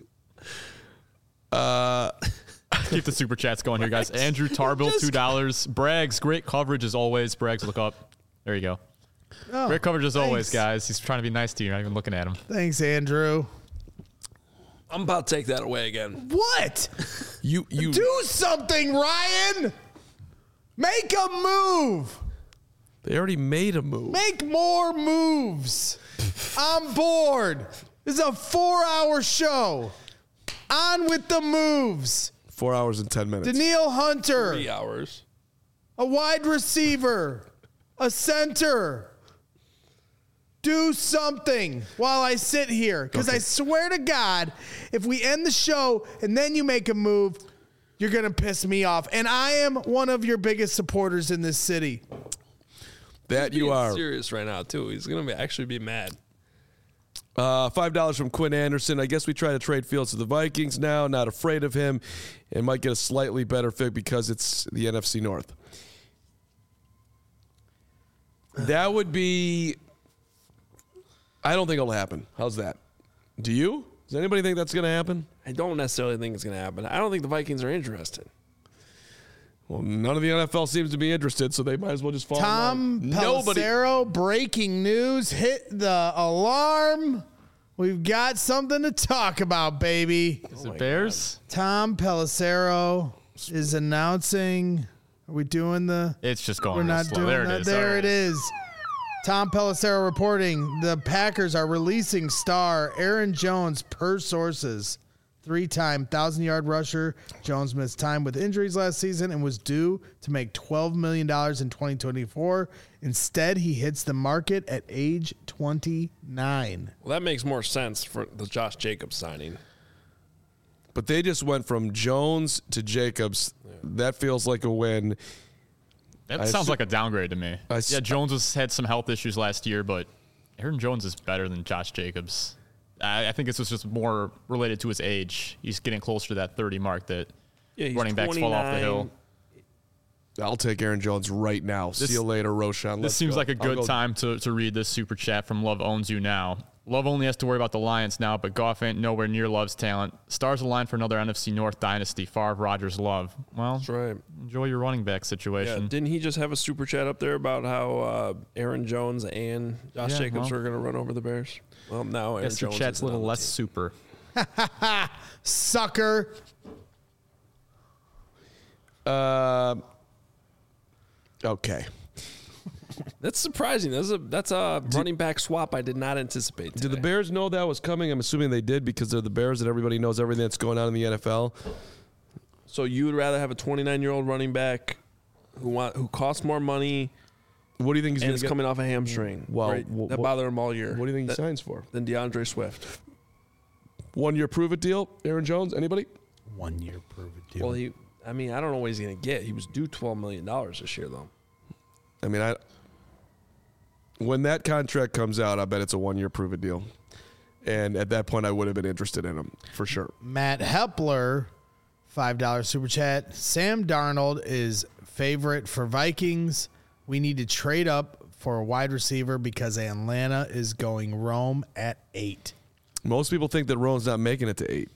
Uh, Keep the super chats going here, guys. Andrew Tarbill, two dollars. Braggs, great coverage as always. Braggs, look up. There you go. Oh, Great coverage as always, thanks. guys. He's trying to be nice to you. You're not even looking at him. Thanks, Andrew. I'm about to take that away again. What? you you Do something, Ryan. Make a move. They already made a move. Make more moves. I'm bored. This is a four-hour show. On with the moves. Four hours and ten minutes. Daniil Hunter, Three hours. a wide receiver, a center. Do something while I sit here. Because I swear to God, if we end the show and then you make a move, you're going to piss me off. And I am one of your biggest supporters in this city. That you Being are. serious right now too. He's gonna be actually be mad. Uh, Five dollars from Quinn Anderson. I guess we try to trade Fields to the Vikings now. Not afraid of him, and might get a slightly better fit because it's the N F C North. That would be. I don't think it'll happen. How's that? Do you? Does anybody think that's going to happen? I don't necessarily think it's gonna happen. I don't think the Vikings are interested. Well, none of the N F L seems to be interested, so they might as well just fall. Tom in line. Nobody. Pelissero, breaking news. Hit the alarm. We've got something to talk about, baby. Is it Bears? Tom Pelissero is announcing. Are we doing the? It's just going We're real not slow. doing There that. it is. There All it right. is. Tom Pelissero reporting the Packers are releasing star Aaron Jones per sources. Three-time thousand-yard rusher. Jones missed time with injuries last season and was due to make twelve million dollars in twenty twenty-four. Instead, he hits the market at age twenty-nine. Well, that makes more sense for the Josh Jacobs signing. But they just went from Jones to Jacobs. That feels like a win. That I sounds assu- like a downgrade to me. I s- yeah, Jones has had some health issues last year, but Aaron Jones is better than Josh Jacobs. I, I think this was just more related to his age. He's getting closer to that thirty mark that Yeah, he's running backs fall off the hill. twenty-nine. I'll take Aaron Jones right now. See you later, Roshan. This Let's seems go. like a I'll good go- time to, to read this super chat from Love Owns You Now. Love only has to worry about the Lions now, but Goff ain't nowhere near Love's talent. Stars align for another N F C North dynasty. Favre, Rodgers, Love. Well, That's right. enjoy your running back Yeah, situation. didn't he just have a super chat up there about how uh, Aaron Jones and Josh Yeah, Jacobs well. are going to run over the Bears? Well, now Aaron Guess your Jones chat's is a little less super. Sucker. Uh, okay. That's surprising. That's a that's a running back swap I did not anticipate. Did the today. Bears know that was coming? I'm assuming they did because they're the Bears and everybody knows everything that's going on in the N F L. So you would rather have a twenty-nine-year-old running back who want who costs more money What do you think he's and going is to get? coming off a hamstring? Well, right? wh- that wh- bothered him all year. What do you think he That- signs for? Than DeAndre Swift. One year prove it deal? Aaron Jones? Anybody? One year prove it deal. Well, he. I mean, I don't know what he's going to get. He was due twelve million dollars this year, though. I mean, I. When that contract comes out, I bet it's a one year prove it deal. And at that point, I would have been interested in him for sure. Matt Hepler, five dollars super chat. Sam Darnold is favorite for Vikings. We need to trade up for a wide receiver because Atlanta is going Rome at eight. Most people think that Rome's not making it to eight.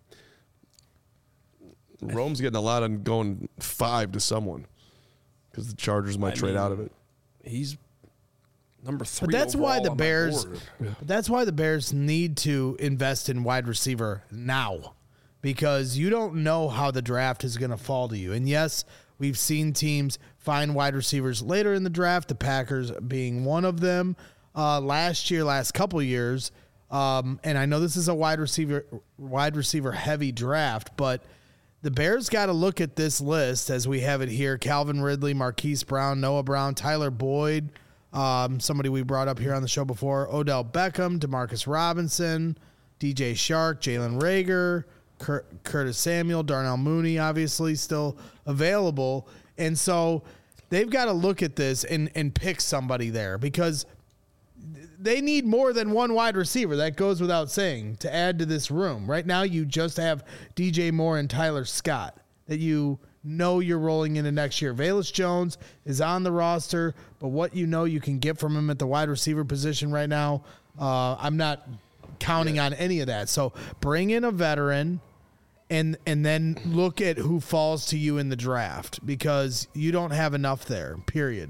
Rome's getting a lot on going five to someone because the Chargers might I trade mean, out of it. He's number three. But that's why overall the on my Bears board. but that's why the Bears need to invest in wide receiver now. Because you don't know how the draft is going to fall to you. And yes, We've seen teams find wide receivers later in the draft, the Packers being one of them. Uh, last year, last couple years, um, and I know this is a wide receiver wide receiver heavy draft, but the Bears got to look at this list as we have it here. Calvin Ridley, Marquise Brown, Noah Brown, Tyler Boyd, um, somebody we brought up here on the show before, Odell Beckham, Demarcus Robinson, D J Shark, Jalen Reagor, Cur- Curtis Samuel, Darnell Mooney, obviously still available. And so they've got to look at this and, and pick somebody there because they need more than one wide receiver. That goes without saying to add to this room. Right now, you just have D J Moore and Tyler Scott that you know you're rolling into next year. Velus Jones is on the roster, but what you know you can get from him at the wide receiver position right now, uh, I'm not counting yeah. on any of that. So bring in a veteran and and then look at who falls to you in the draft because you don't have enough there, period.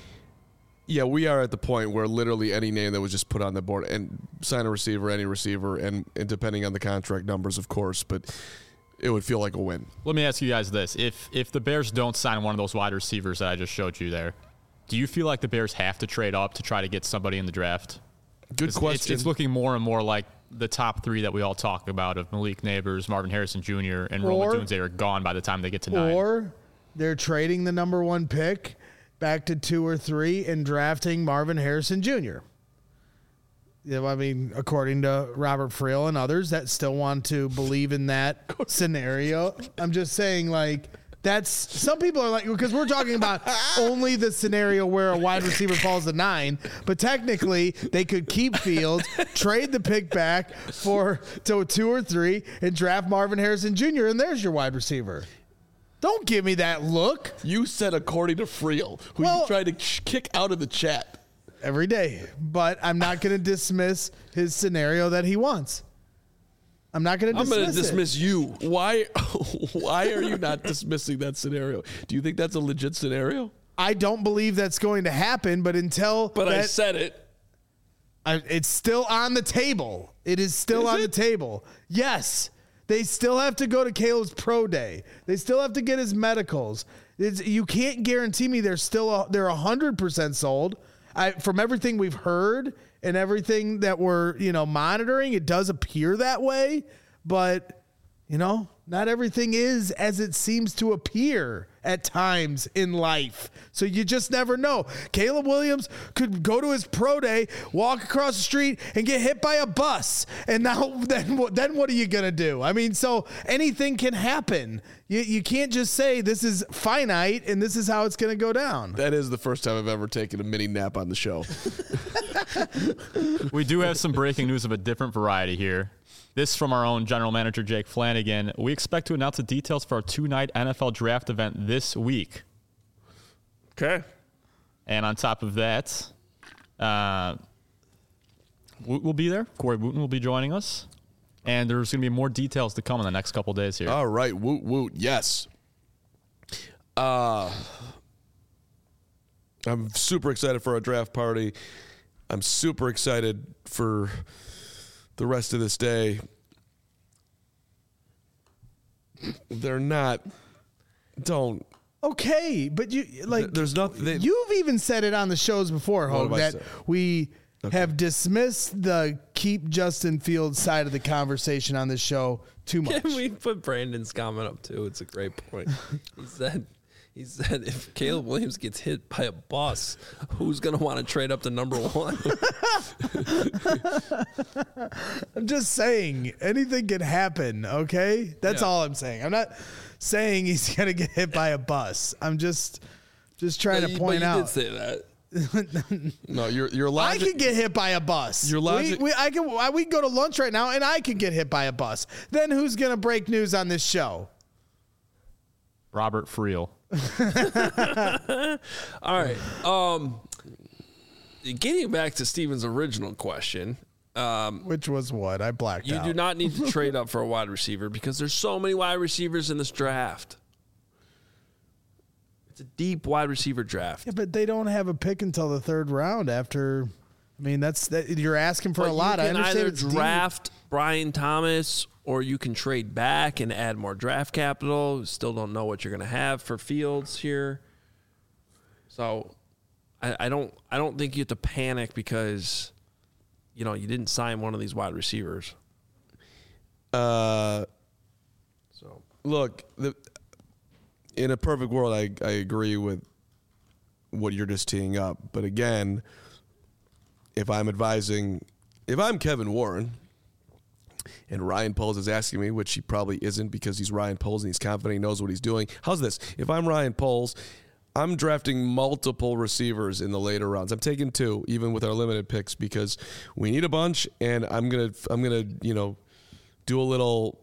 Yeah, we are at the point where literally any name that was just put on the board and sign a receiver, any receiver, and, and depending on the contract numbers, of course, but it would feel like a win. Let me ask you guys this. If if the Bears don't sign one of those wide receivers that I just showed you there, do you feel like the Bears have to trade up to try to get somebody in the draft? Good it's, question. It's, it's looking more and more like the top three that we all talk about of Malik Neighbors, Marvin Harrison Junior, and Rome Odunze are gone by the time they get to nine. Or they're trading the number one pick back to two or three and drafting Marvin Harrison Junior You know, I mean, according to Robert Friel and others that still want to believe in that scenario. I'm just saying, like, that's some people are like, because we're talking about only the scenario where a wide receiver falls to nine, but technically they could keep Fields, trade the pick back for to two or three, and draft Marvin Harrison Junior, and there's your wide receiver. Don't give me that look. You said according to Friel, who Well, you tried to kick out of the chat. Every day. But I'm not going to dismiss his scenario that he wants. I'm not going to I'm dismiss going to dismiss it. you. Why Why are you not dismissing that scenario? Do you think that's a legit scenario? I don't believe that's going to happen, but until But that, I said it. I, it's still on the table. It is still Is on it? the table. Yes. They still have to go to Caleb's pro day. They still have to get his medicals. It's, you can't guarantee me they're still a, they're one hundred percent sold. I, from everything we've heard and everything that we're, you know, monitoring, it does appear that way, but you know, not everything is as it seems to appear at times in life. So you just never know. Caleb Williams could go to his pro day, walk across the street and get hit by a bus. And now then what, then what are you going to do? I mean, so anything can happen. You, you can't just say this is finite and this is how it's going to go down. That is the first time I've ever taken a mini nap on the show. We do have some breaking news of a different variety here. This from our own general manager, Jake Flanagan. We expect to announce the details for our two-night N F L draft event this week. Okay. And on top of that, uh, Woot will be there. Corey Wooten will be joining us. And there's going to be more details to come in the next couple days here. All right. Woot, woot. Yes. Uh, I'm super excited for our draft party. I'm super excited for the rest of this day. They're not. Don't. Okay, but you like There's nothing. you've even said it on the shows before, What Hogue, have I that said? we have dismissed the keep Justin Fields side of the conversation on this show too much. Can we put Brandon's comment up too? It's a great point. He said, he said, if Caleb Williams gets hit by a bus, who's going to want to trade up to number one? I'm just saying anything can happen. Okay, that's Yeah. all I'm saying. I'm not saying he's gonna get hit by a bus. I'm just just trying But to you- point but you out. did say that. No, your your I logic. could get hit by a bus. Your logic- We, we, I can. I, we can go to lunch right now, and I could get hit by a bus. Then who's gonna break news on this show? Robert Friel. All right. Um, getting back to Steven's original question, um, Which was what I blacked you out. do not need to trade up for a wide receiver because there's so many wide receivers in this draft. It's a deep wide receiver draft. Yeah, but they don't have a pick until the third round. After, I mean, that's that. You're asking for But a lot. You I can understand either it's deep. draft Brian Thomas, or you can trade back and add more draft capital. Still don't know what you're going to have for Fields here. So I, I don't I don't think you have to panic because, you know, you didn't sign one of these wide receivers. Uh, so look, the, in a perfect world, I, I agree with what you're just teeing up. But again, if I'm advising, if I'm Kevin Warren and Ryan Poles is asking me, which he probably isn't because he's Ryan Poles and he's confident he knows what he's doing. How's this? If I'm Ryan Poles, I'm drafting multiple receivers in the later rounds. I'm taking two, even with our limited picks, because we need a bunch, and I'm gonna, I'm gonna, you know, do a little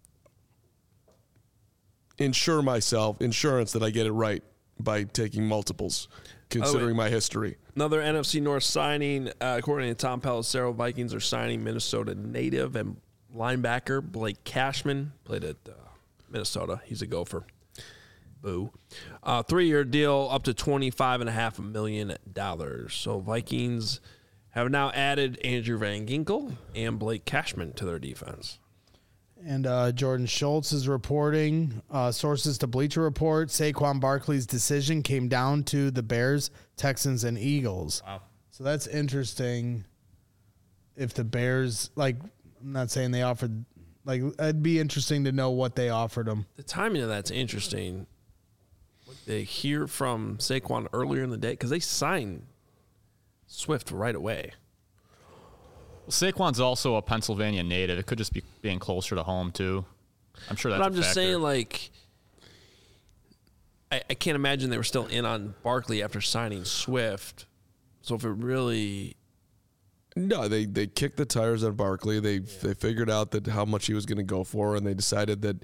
insure myself, insurance that I get it right by taking multiples, considering my history. Another N F C North signing, uh, according to Tom Pelissero, Vikings are signing Minnesota native and linebacker Blake Cashman. Played at uh, Minnesota. He's a Gopher. Boo. Uh, three-year deal up to twenty-five point five million dollars. So Vikings have now added Andrew Van Ginkel and Blake Cashman to their defense. And uh, Jordan Schultz is reporting, uh, sources to Bleacher Report, Saquon Barkley's decision came down to the Bears, Texans, and Eagles. Wow. So that's interesting. If the Bears, like, I'm not saying they offered, like, it'd be interesting to know what they offered them. The timing of that's interesting. They hear from Saquon earlier in the day because they signed Swift right away. Well, Saquon's also a Pennsylvania native. It could just be being closer to home, too. I'm sure that's But I'm a just factor. saying, like, I, I can't imagine they were still in on Barkley after signing Swift. So if it really... No, they, they kicked the tires on Barkley. They yeah. they figured out that how much he was going to go for, and they decided that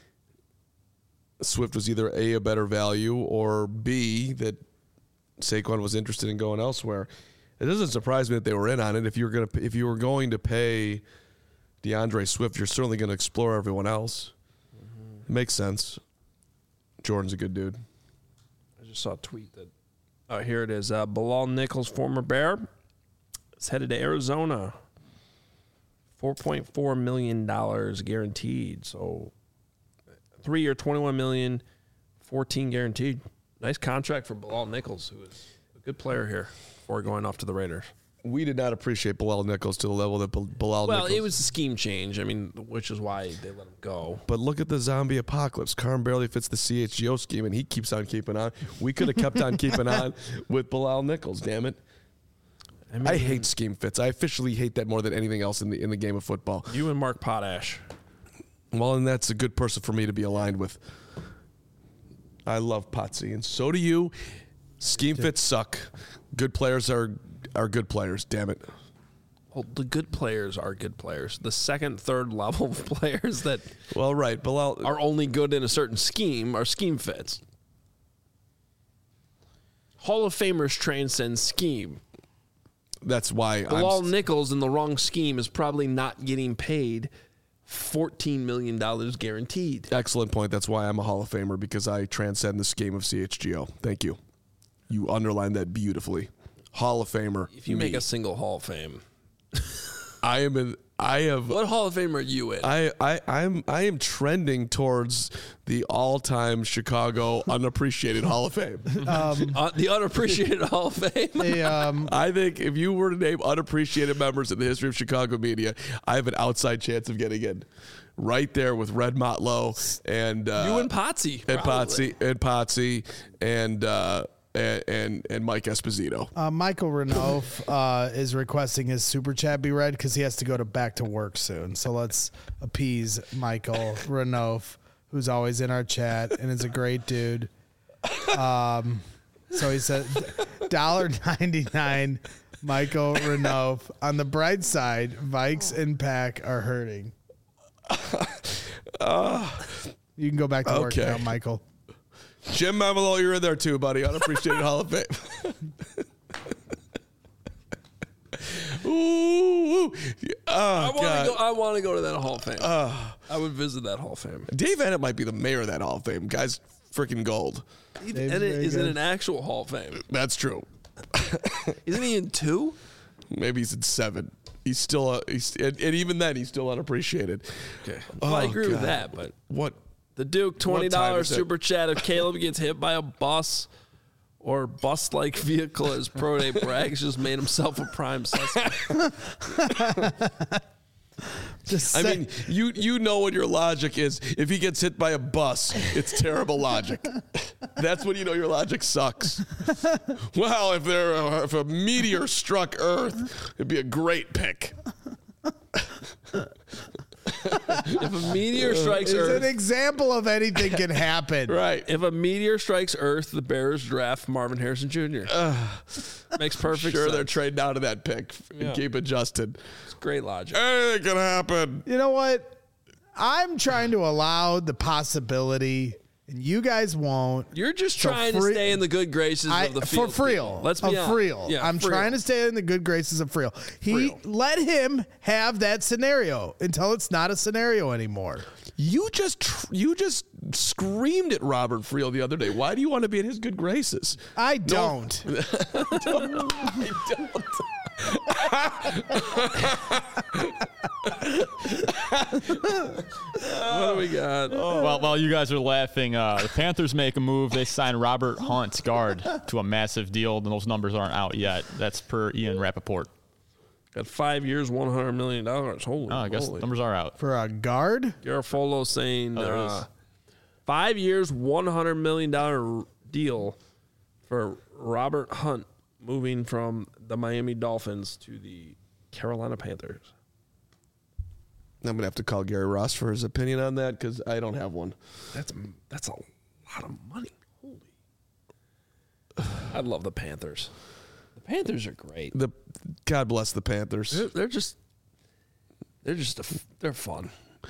Swift was either A, a better value, or B, that Saquon was interested in going elsewhere. It doesn't surprise me that they were in on it. If you were going to if you were going to pay DeAndre Swift, you're certainly going to explore everyone else. Mm-hmm. It makes sense. Jordan's a good dude. I just saw a tweet that. Oh, here it is. Uh, Bilal Nichols, former Bear, is headed to Arizona. four point four million dollars guaranteed. So, three-year, twenty-one million dollars, fourteen guaranteed. Nice contract for Bilal Nichols, who is a good player here before going off to the Raiders. We did not appreciate Bilal Nichols to the level that Bilal well, Nichols. Well, it was a scheme change. I mean, which is why they let him go. But look at the zombie apocalypse. Carm barely fits the C H G O scheme, and he keeps on keeping on. We could have kept on keeping on with Bilal Nichols, damn it. I, mean, I hate scheme fits. I officially hate that more than anything else in the in the game of football. You and Mark Potash. Well, and that's a good person for me to be aligned with. I love Potsy, and so do you. Scheme fits suck. Good players are are good players, damn it. Well, the good players are good players. The second, third level players that well, right, Bilal are only good in a certain scheme are scheme fits. Hall of Famers transcend scheme. That's why Bilal I'm Nichols in the wrong scheme is probably not getting paid fourteen million dollars guaranteed. Excellent point. That's why I'm a Hall of Famer, because I transcend the scheme of C H G O. Thank you. You underlined that beautifully. Hall of Famer. If you me. make a single Hall of Fame. I am in I have What Hall of Fame are you in? I, I, I'm I am trending towards the all time Chicago unappreciated Hall of Fame. Um, uh, the unappreciated Hall of Fame. they, um, I think if you were to name unappreciated members in the history of Chicago media, I have an outside chance of getting in. Right there with Red Motlow and uh, you and Potsy. and probably. Potsy and Potsy and uh, and, and and Mike Esposito. uh, Michael Renault uh, is requesting his super chat be read because he has to go to back to work soon. So let's appease Michael Renault, who's always in our chat and is a great dude. Um, so he said, one dollar ninety-nine. Michael Renault. On the bright side, Vikes and Pack are hurting. Uh, you can go back to work okay. now, Michael. Jim Mamalo, you're in there too, buddy. Unappreciated Hall of Fame. ooh, ooh. Oh, I want to God. go. I want to go to that Hall of Fame. Uh, I would visit that Hall of Fame. Dave Ennett might be the mayor of that Hall of Fame. Guy's freaking gold. And Dave's it very is in good. an actual Hall of Fame. That's true. Isn't he in two? Maybe he's in seven. He's still, uh, he's, and, and even then, he's still unappreciated. Okay. Well, I Oh, agree with God. that, but What? the Duke twenty What time dollars is it? super chat if Caleb gets hit by a bus or bus-like vehicle as Pro Day brags just made himself a prime suspect. Just I say- mean, you you know what your logic is. If he gets hit by a bus, it's terrible logic. That's when you know your logic sucks. Well, if there uh, if a meteor struck Earth, it'd be a great pick. If a meteor strikes it's Earth, an example of anything can happen. Right. if a meteor strikes Earth, the Bears draft Marvin Harrison Junior Makes perfect Sure, sense. they're trading out of that pick and Yeah. keep adjusted. It's great logic. Anything can happen. You know what? I'm trying to allow the possibility, and you guys won't. You're just So trying free- to stay in the good graces I, of the for field. Friel. people. Let's be of honest. Friel. Yeah, I'm Friel. trying to stay in the good graces of Friel. He Friel. let him have that scenario until it's not a scenario anymore. You just tr- you just screamed at Robert Friel the other day. Why do you want to be in his good graces? I don't. What do we got? Well, while you guys are laughing, uh, the Panthers make a move. They sign Robert Hunt, guard, to a massive deal. And those numbers aren't out yet. That's per Ian Rappaport. Got five years, one hundred million dollars. Holy, Oh, I guess holy. numbers are out. For a guard? Garofalo saying Oh, there uh, is. five years, one hundred million dollar deal for Robert Hunt moving from the Miami Dolphins to the Carolina Panthers. I'm gonna have to call Gary Ross for his opinion on that because I don't have one. That's that's a lot of money. Holy, I love the Panthers. The Panthers are great. The God bless the Panthers. They're, they're just they're just a f they're fun.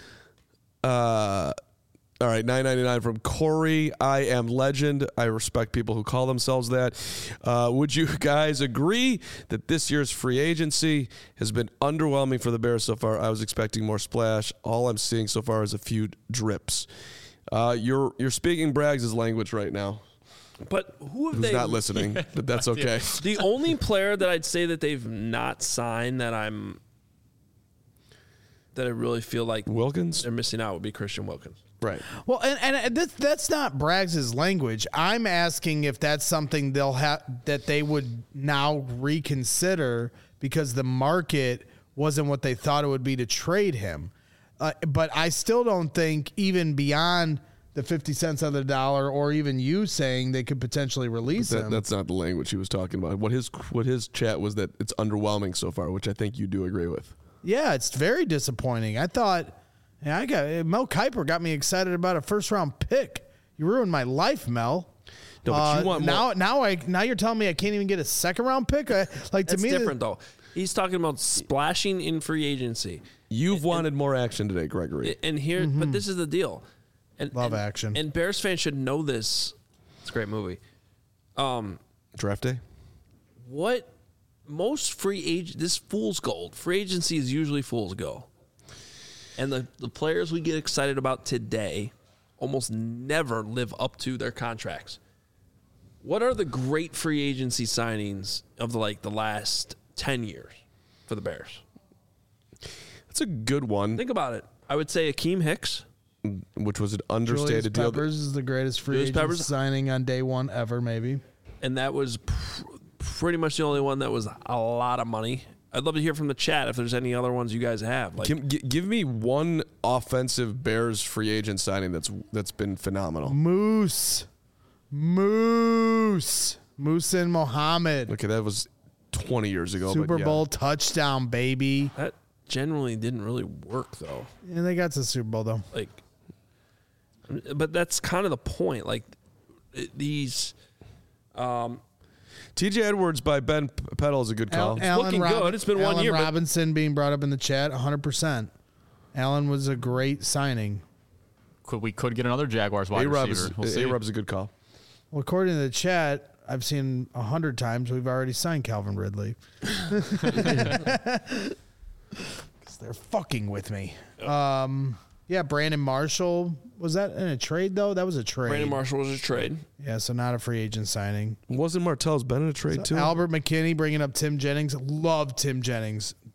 Uh, all right, nine ninety-nine from Corey. I am legend. I respect people who call themselves that. Uh, would you guys agree that this year's free agency has been underwhelming for the Bears so far? I was expecting more splash. All I'm seeing so far is a few drips. Uh, you're you're speaking Braggs' language right now. But who have Who's they not listening? But that's okay. The only player that I'd say that they've not signed that I'm that I really feel like Wilkins, they're missing out would be Christian Wilkins. right? Well, and, and this, that's not Braggs' language. I'm asking if that's something they'll have that they would now reconsider because the market wasn't what they thought it would be to trade him. Uh, but I still don't think even beyond the fifty cents on the dollar, or even you saying they could potentially release That, him. that's not the language he was talking about. What his what his chat was that it's underwhelming so far, which I think you do agree with. Yeah, it's very disappointing. I thought, yeah, I got Mel Kiper got me excited about a first round pick. You ruined my life, Mel. No, but you Uh, want now, more- now I now you're telling me I can't even get a second round pick. I, like to That's me, different though. He's talking about splashing in free agency. You've wanted more action today, Gregory. And here, but this is the deal. And, Love and- action. And Bears fans should know this. It's a great movie. Um, Draft day. what most free agent this fool's gold. Free agency is usually fool's gold. And the, the players we get excited about today almost never live up to their contracts. What are the great free agency signings of the like the last ten years for the Bears? That's a good one, Think about it. I would say Akeem Hicks. which was an Julius understated deal. Peppers is the greatest free Julius agent Peppers? signing on day one ever, maybe. And that was pr- pretty much the only one that was a lot of money. I'd love to hear from the chat if there's any other ones you guys have. Like, Give, gi- give me one offensive Bears free agent signing that's that's been phenomenal. Moose, Moose, Moose and Mohammed, Okay, that was twenty years ago. Super but yeah. Bowl touchdown, baby. that generally didn't really work though. And they got to the Super Bowl though. Like, but that's kind of the point. Like, it- these. Um, T J Edwards by Ben P- Peddle is a good call. Al- looking good. It's been one Allen year, but- Robinson being brought up in the chat, one hundred percent. Allen was a great signing. Could we could get another Jaguars wide A-Rob receiver? is, We'll see. A-Rob's a good call. Well, according to the chat, I've seen a hundred times we've already signed Calvin Ridley. Because they're fucking with me. Um, yeah, Brandon Marshall. Was that in a trade, though? That was a trade. Brandon Marshall was a trade. Yeah, so not a free agent signing. Wasn't Martell's been in a trade too? Albert McKinney bringing up Tim Jennings. Love Tim Jennings.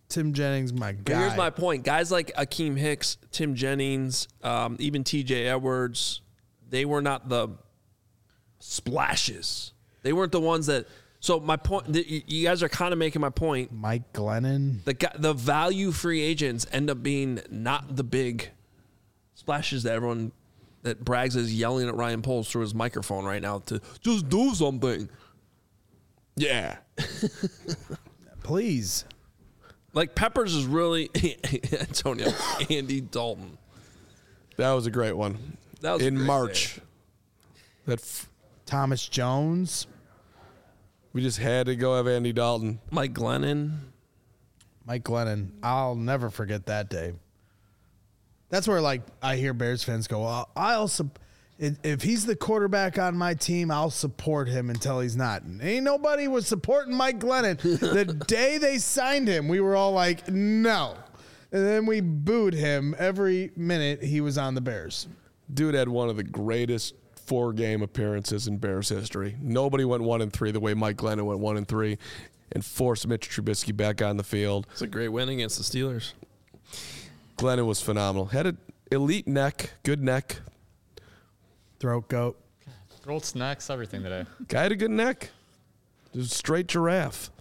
Tim Jennings, my But guy. here's my point. Guys like Akeem Hicks, Tim Jennings, um, even T J Edwards, they were not the splashes. They weren't the ones that. So my point, the, you guys are kind of making my point. Mike Glennon. The guy, the value free agents end up being not the big splashes that everyone that Braggs is yelling at Ryan Poles through his microphone right now to just do something. Yeah. Please. Like Peppers is really Antonio Andy Dalton. That was a great one. That was a in great March. day. That f- Thomas Jones. we just had to go have Andy Dalton. Mike Glennon. Mike Glennon. I'll never forget that day. That's where, like, I hear Bears fans go, well, I'll su- if he's the quarterback on my team, I'll support him until he's not. And ain't nobody was supporting Mike Glennon. The day they signed him, we were all like, no. And then we booed him every minute he was on the Bears. Dude had one of the greatest four-game appearances in Bears history. Nobody went one and three the way Mike Glennon went one and three, and forced Mitch Trubisky back on the field. It's a great win against the Steelers. Glennon was phenomenal. Had an elite neck, good neck. Throat goat. Rolled snacks, everything today. Guy had a good neck. Just straight giraffe.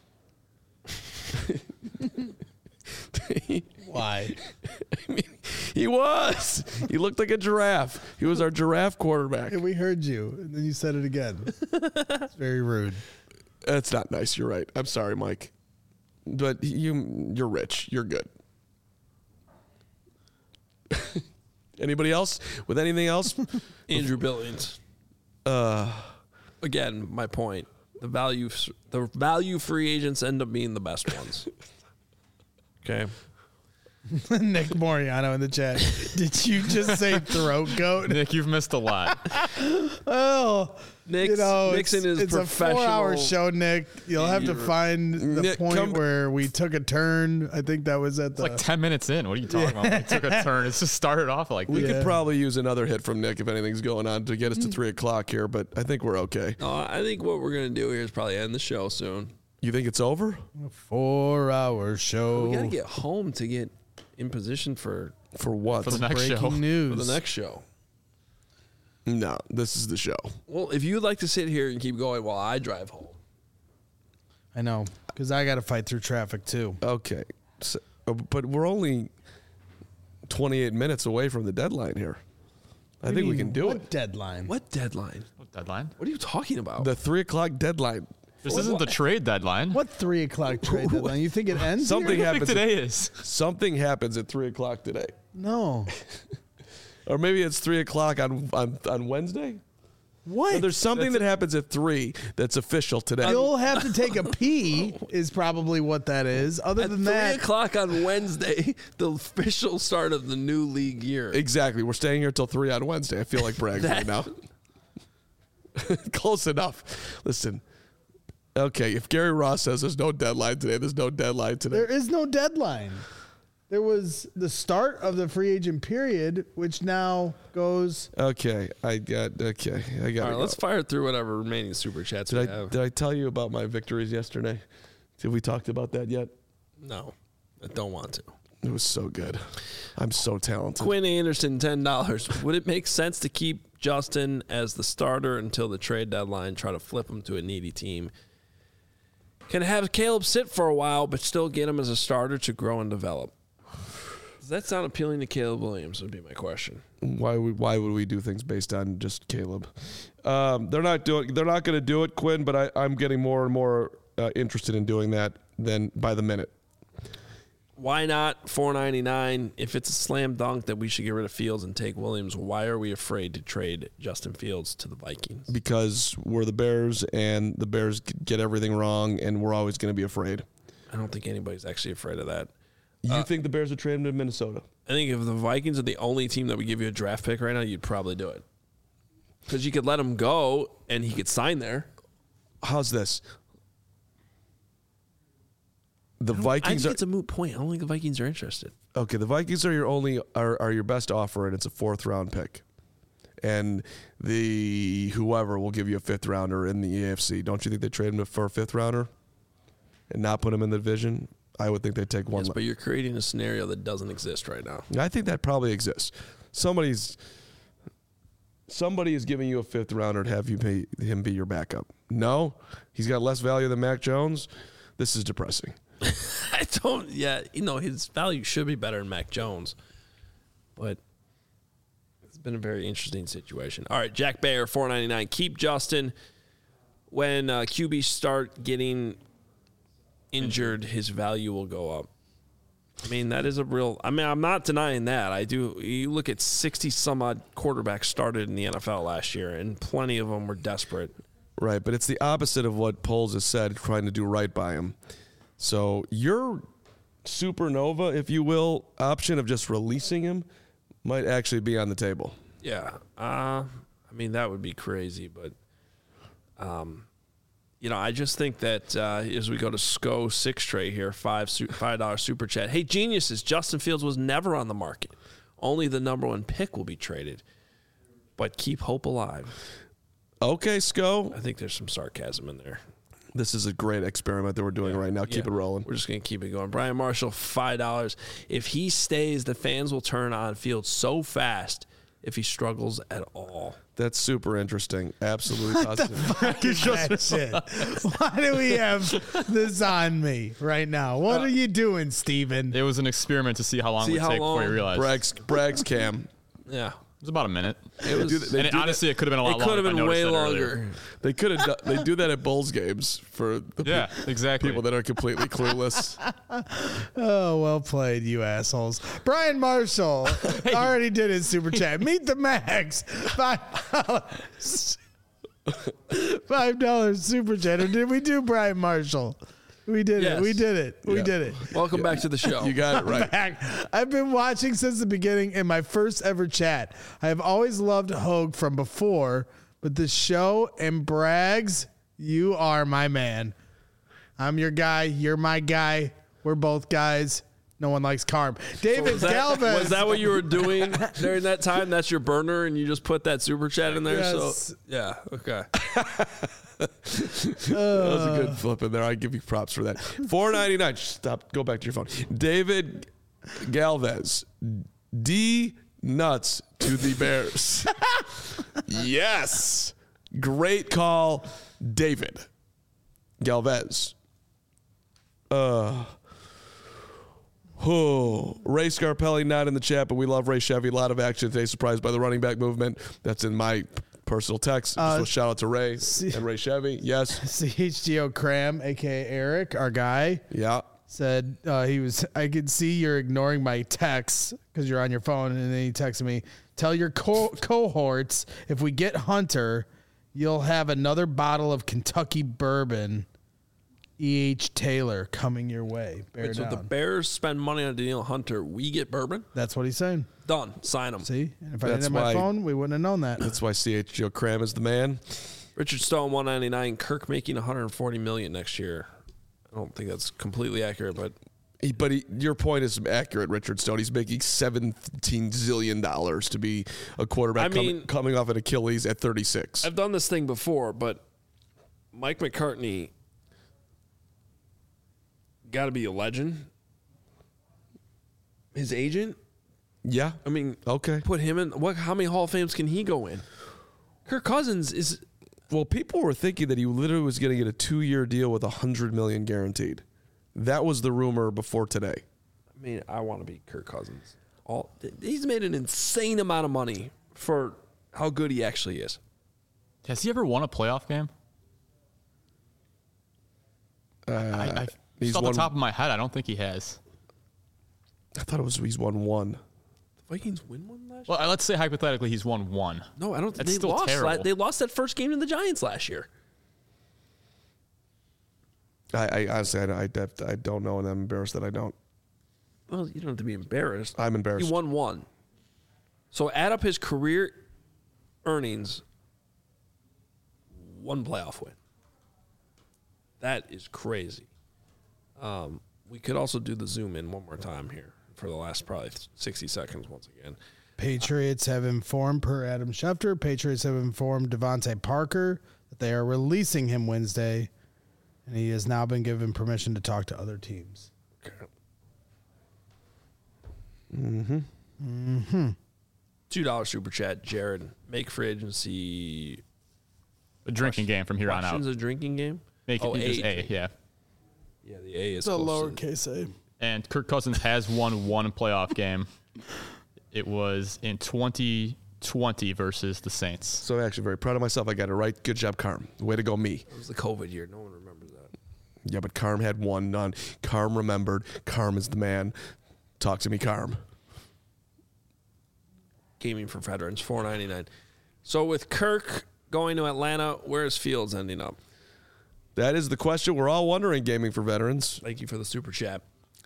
Why? I mean, he was. He looked like a giraffe. He was our giraffe quarterback. Hey, we heard you, and then you said it again. It's very rude. That's not nice. You're right. I'm sorry, Mike. But you, you're rich. You're good. Anybody else with anything else? Andrew Billings. Uh, Again, my point. The value the value free agents end up being the best ones. Okay. Nick Moriano in the chat. Did you just say throat goat? Nick, you've missed a lot. Oh, Nick's, you know, Nick's it's, in his it's a professional. four-hour show, Nick. You'll have to find the Nick, point come- where we took a turn. I think that was at the. It's like ten minutes in. What are you talking about? We took a turn. It's just started off like we this. could probably use another hit from Nick if anything's going on to get us to three o'clock here, but I think we're okay. Uh, I think what we're gonna do here is probably end the show soon. You think it's over? four-hour show. We gotta get home to get in position for For what? For the next breaking show. news. for the next show. No, this is the show. Well, if you'd like to sit here and keep going while I drive home, I know, because I got to fight through traffic too. Okay. So, uh, but we're only twenty-eight minutes away from the deadline here. I think we can do what it. Deadline. what deadline? What deadline? What are you talking about? The three o'clock deadline. This isn't the trade deadline. What three o'clock trade deadline? You think it ends? Something here? I think happens. today is. Something happens at three o'clock today, No. or maybe it's three o'clock on on, on Wednesday. What? No, there's something that happens at three that's official today. You'll have to take a pee. Is probably what that is. Other At than three that, o'clock on Wednesday, the official start of the new league year. Exactly. We're staying here till three on Wednesday. I feel like bragging right now. Close enough. Listen. Okay, if Gary Ross says there's no deadline today, there's no deadline today. there is no deadline. There was the start of the free agent period, which now goes. Okay, I got. Okay, I got. All right, let's fire through whatever remaining super chats we Did I have. did I tell you about my victories yesterday? Have we talked about that yet? No, I don't want to. It was so good. I'm so talented. Quinn Anderson, ten dollars. Would it make sense to keep Justin as the starter until the trade deadline, try to flip him to a needy team? Can have Caleb sit for a while, but still get him as a starter to grow and develop? Does that sound appealing to Caleb Williams would be my question. Why would why would we do things based on just Caleb? Um, they're not doing. They're not going to do it, Quinn. But I, I'm getting more and more uh, interested in doing that than by the minute. Why not four ninety-nine? If it's a slam dunk that we should get rid of Fields and take Williams, why are we afraid to trade Justin Fields to the Vikings? Because we're the Bears, and the Bears get everything wrong, and we're always going to be afraid. I don't think anybody's actually afraid of that. You think the Bears would trade him to Minnesota? I think if the Vikings are the only team that would give you a draft pick right now, you'd probably do it. Because you could let him go and he could sign there. How's this? The I Vikings think are it's a moot point. I don't think the Vikings are interested. okay. The Vikings are your only are, are your best offer, and it's a fourth round pick. And the whoever will give you a fifth rounder in the A F C. Don't you think they trade him for a fifth rounder and not put him in the division? I would think they'd take one. Yes, but you're creating a scenario that doesn't exist right now. I think that probably exists. Somebody's somebody is giving you a fifth rounder to have you pay him be your backup. No, he's got less value than Mac Jones. This is depressing. I don't. Yeah, you know his value should be better than Mac Jones, but it's been a very interesting situation. All right, Jack Bayer, four ninety-nine. Keep Justin. When uh, Q Bs start getting injured, his value will go up. I mean, that is a real. I mean, I'm not denying that. I do. You look at sixty some odd quarterbacks started in the N F L last year, and plenty of them were desperate. Right, but it's the opposite of what Poles has said, trying to do right by him. So your supernova, if you will, option of just releasing him might actually be on the table. Yeah. Uh, I mean, that would be crazy, but, um, you know, I just think that uh, as we go to S C O six tray here, five su- five dollar super chat. Hey, geniuses! Justin Fields was never on the market. Only the number one pick will be traded. But keep hope alive. Okay, S C O. I think there's some sarcasm in there. This is a great experiment that we're doing yeah. right now. Keep yeah. it rolling. We're just going to keep it going. Brian Marshall, five dollars. If he stays, the fans will turn on Fields so fast if he struggles at all. That's super interesting. Absolutely positive. What the fuck is that shit? Why do we have this on me right now? What uh, are you doing, Steven? It was an experiment to see how long see it would how take long? before you realized. Bragg's, Bragg's cam. Yeah. It was about a minute. It was, and it, honestly, that, it could have been a lot it longer. It could have been way longer. Earlier. They could have. Do, they do that at Bulls games for the yeah, pe- exactly. people that are completely clueless. Oh, well played, you assholes. Brian Marshall hey. already did his super chat. Meet the Max. Five dollars. Five dollars super chat. Or did we do Brian Marshall? We did yes. it. We did it. We yeah. did it. Welcome back to the show. You got it right. Back. I've been watching since the beginning in my first ever chat. I have always loved Hogue from before, but the show and Braggs, you are my man. I'm your guy. You're my guy. We're both guys. No one likes Carm. David so was that, Galvez. Was that what you were doing during that time? That's your burner, and you just put that super chat in there? Yes. So yeah, okay. That was a good flip in there. I give you props for that. four ninety-nine. Stop. Go back to your phone. David Galvez. D nuts to the Bears. Yes. Great call, David Galvez. Uh. Oh, Ray Scarpelli not in the chat, but we love Ray Chevy. A lot of action today. Surprised by the running back movement. That's in my personal text. Uh, so shout out to Ray C- and Ray Chevy. Yes. C H G O Cram, a k a. Eric, our guy. Yeah. Said uh, he was, I could see you're ignoring my texts because you're on your phone. And then he texted me, tell your co- cohorts if we get Hunter, you'll have another bottle of Kentucky bourbon. E H. Taylor coming your way. Bear Wait, so down. the Bears spend money on Danielle Hunter. We get bourbon? That's what he's saying. Done. Sign him. See? And if I That's didn't have my why- phone, we wouldn't have known that. That's why C H G O Cram is the man. Richard Stone, one ninety-nine. Kirk making one hundred forty million dollars next year. I don't think that's completely accurate, but He, but he, your point is accurate, Richard Stone. He's making seventeen zillion dollars to be a quarterback I mean, coming, coming off an Achilles at thirty-six. I've done this thing before, but Mike McCartney got to be a legend. His agent, Yeah. I mean, Okay. put him in. What? How many Hall of Fames can he go in? Kirk Cousins is. Well, people were thinking that he literally was going to get a two-year deal with one hundred million dollars guaranteed. That was the rumor before today. I mean, I want to be Kirk Cousins. All he's made an insane amount of money for how good he actually is. Has he ever won a playoff game? Uh, I, I, he's just off won, the top of my head, I don't think he has. I thought it was he's won one. The Vikings win one last Well, let's say hypothetically he's won one. year? No, I don't. That's They still lost. terrible. La- they lost that first game to the Giants last year. I, I honestly, I, I, I don't know, and I'm embarrassed that I don't. Well, you don't have to be embarrassed. I'm embarrassed. He won one. So add up his career earnings. One playoff win. That is crazy. Um, we could also do the zoom in one more time here for the last probably sixty seconds once again. Patriots have informed, per Adam Schefter, Patriots have informed Devontae Parker that they are releasing him Wednesday, and he has now been given permission to talk to other teams. Mm-hmm. Mm-hmm. Two dollar super chat, Jared. Make free agency A drinking game from here on out. questions a drinking game. Make oh, it A. just A, yeah. Yeah, the A is It's a close to- lowercase a. And Kirk Cousins has won one playoff game. It was in twenty twenty versus the Saints. So actually very proud of myself. I got it right. Good job, Carm. Way to go, me. It was the COVID year. No one remembers that. Yeah, but Carm had one none. Carm remembered. Carm is the man. Talk to me, Carm. Gaming for veterans, four ninety nine. So with Kirk going to Atlanta, where is Fields ending up? That is the question we're all wondering, Gaming for Veterans. Thank you for the super chat.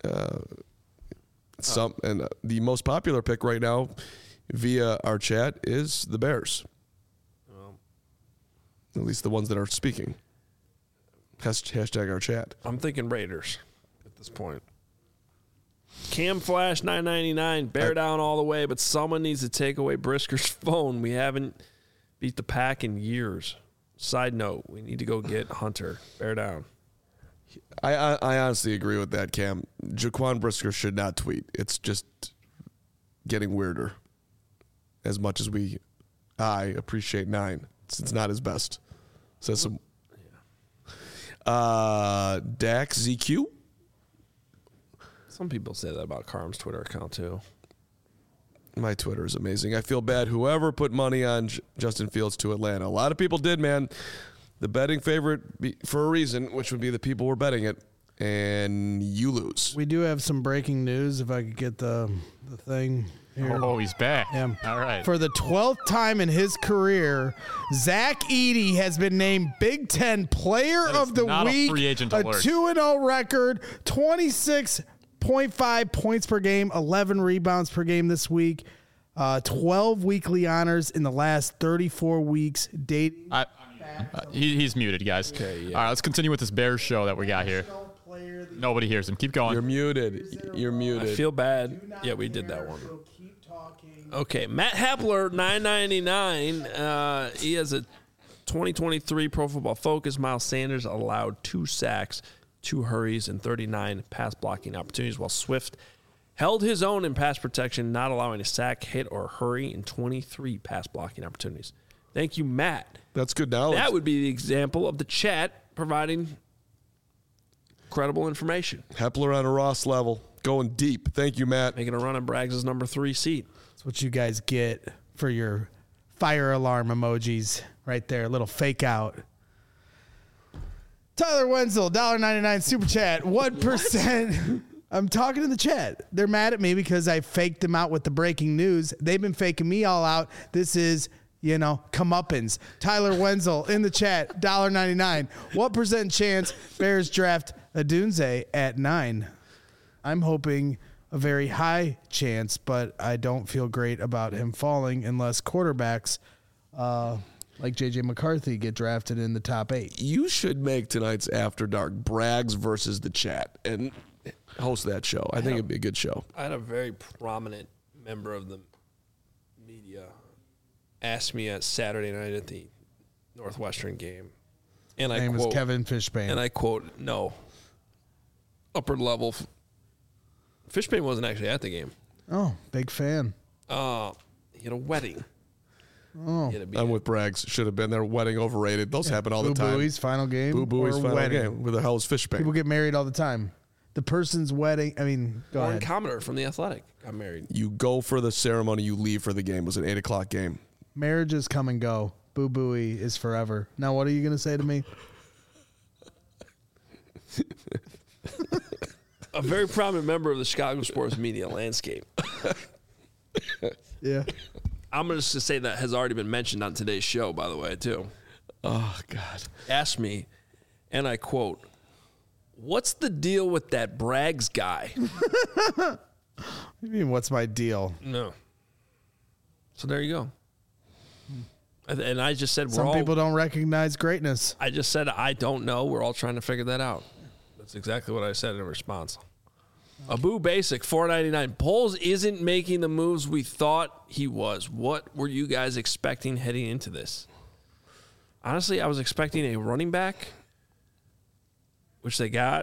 Some and uh, the most popular pick right now via our chat is the Bears. Well, At least the ones that are speaking. Has- Hashtag our chat. I'm thinking Raiders at this point. Cam Flash nine ninety-nine, bear I- down all the way, but someone needs to take away Brisker's phone. We haven't beat the pack in years. Side note, we need to go get Hunter. Bear down. I, I I honestly agree with that, Cam. Jaquan Brisker should not tweet. It's just getting weirder. As much as we, I appreciate nine. It's, it's not his best. Says some. Uh, Dax Z Q. Some people say that about Carm's Twitter account too. My Twitter is amazing. I feel bad. Whoever put money on J- Justin Fields to Atlanta, a lot of people did, man. The betting favorite be, for a reason, which would be the people were betting it, and you lose. We do have some breaking news. If I could get the the thing here. Oh, he's back. Yeah. All right. For the twelfth time in his career, Zach Edey has been named Big Ten Player That is of the not a Week. free agent a alert. two and oh record, twenty-six point five points per game, eleven rebounds per game this week, uh, twelve weekly honors in the last thirty-four weeks. Dating. I, uh, he, he's muted, guys. Okay, yeah. All right, let's continue with this Bears show that we got here. Nobody hears him. Keep going. You're muted. You're I muted. feel bad. Yeah, we did that one. Okay, Matt Hepler, nine ninety-nine. Uh, he has a twenty twenty-three Pro Football Focus. Miles Sanders allowed two sacks, two hurries, and thirty-nine pass blocking opportunities, while Swift held his own in pass protection, not allowing a sack, hit, or hurry in twenty-three pass blocking opportunities. Thank you, Matt. That's good knowledge. That would be the example of the chat providing credible information. Hepler on a Ross level, going deep. Thank you, Matt. Making a run at Braggs' number three seat. That's what you guys get for your fire alarm emojis right there. A little fake out. Tyler Wenzel, one dollar ninety-nine super chat. What percent? I'm talking to the chat. They're mad at me because I faked them out with the breaking news. They've been faking me all out. This is, you know, comeuppance. Tyler Wenzel in the chat, one dollar ninety-nine. What percent chance Bears draft Adunze at nine? I'm hoping a very high chance, but I don't feel great about him falling unless quarterbacks uh, like J J McCarthy get drafted in the top eight. You should make tonight's After Dark Braggs versus the chat and host that show. I think it'd be a good show. I had a very prominent member of the media ask me at Saturday night at the Northwestern game, and I His name quote, was Kevin Fishbane. and I quote, no, upper level. Fishbane wasn't actually at the game. oh, big fan. Uh, he had a wedding. Oh, He had to be I'm at- with Braggs. Should have been there. Wedding overrated. Those happen all Boo the time. Booey's final game. Boo Booey's or final wedding. game. Where the hell is Fishbane? People get married all the time. The person's wedding. I mean, go Warren ahead. Commodore from the Athletic got married. You go for the ceremony. You leave for the game. It was an eight o'clock game. Marriages come and go. Boo Booey is forever. Now, what are you going to say to me? A very prominent member of the Chicago sports media landscape. Yeah. I'm going to just say that has already been mentioned on today's show, by the way, too. Oh God. Asked me, and I quote, "What's the deal with that Braggs guy?" What do you mean, what's my deal? No. So there you go. And- And I just said we're Some all. people don't recognize greatness. I just said I don't know. We're all trying to figure that out. That's exactly what I said in response. Abu Basic four ninety-nine. Poles isn't making the moves we thought he was. What were you guys expecting heading into this? Honestly, I was expecting a running back, which they got,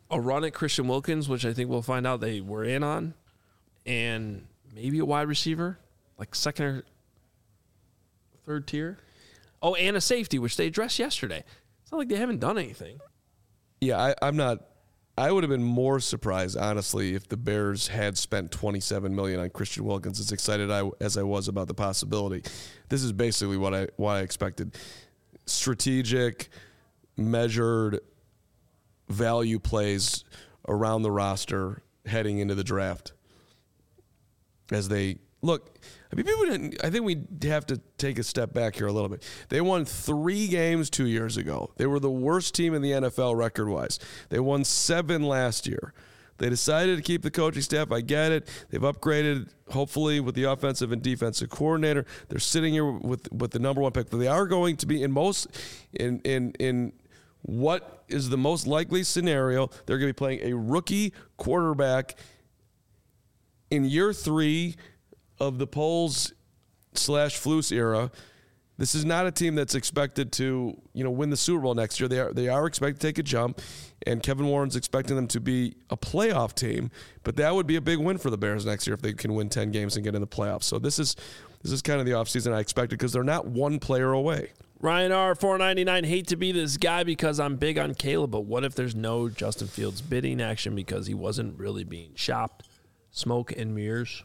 a run at Christian Wilkins, which I think we'll find out they were in on, and maybe a wide receiver, like second or third tier. Oh, and a safety, which they addressed yesterday. It's not like they haven't done anything. Yeah, I, I'm not. I would have been more surprised, honestly, if the Bears had spent twenty-seven million dollars on Christian Wilkins. As excited I, as I was about the possibility, this is basically what I what I expected: strategic, measured value plays around the roster heading into the draft. As they look, I mean, people didn't, I think we have to take a step back here a little bit. They won three games two years ago. They were the worst team in the N F L record-wise. They won seven last year. They decided to keep the coaching staff. I get it. They've upgraded, hopefully, with the offensive and defensive coordinator. They're sitting here with with the number one pick. But they are going to be in most in in in what is the most likely scenario. They're going to be playing a rookie quarterback in year three of the Poles slash Flus era. This is not a team that's expected to, you know, win the Super Bowl next year. They are they are expected to take a jump, and Kevin Warren's expecting them to be a playoff team. But that would be a big win for the Bears next year if they can win ten games and get in the playoffs. So this is this is kind of the offseason I expected because they're not one player away. Ryan R. four ninety-nine, hate to be this guy because I'm big on Caleb, but what if there's no Justin Fields bidding action because he wasn't really being shopped? Smoke and mirrors.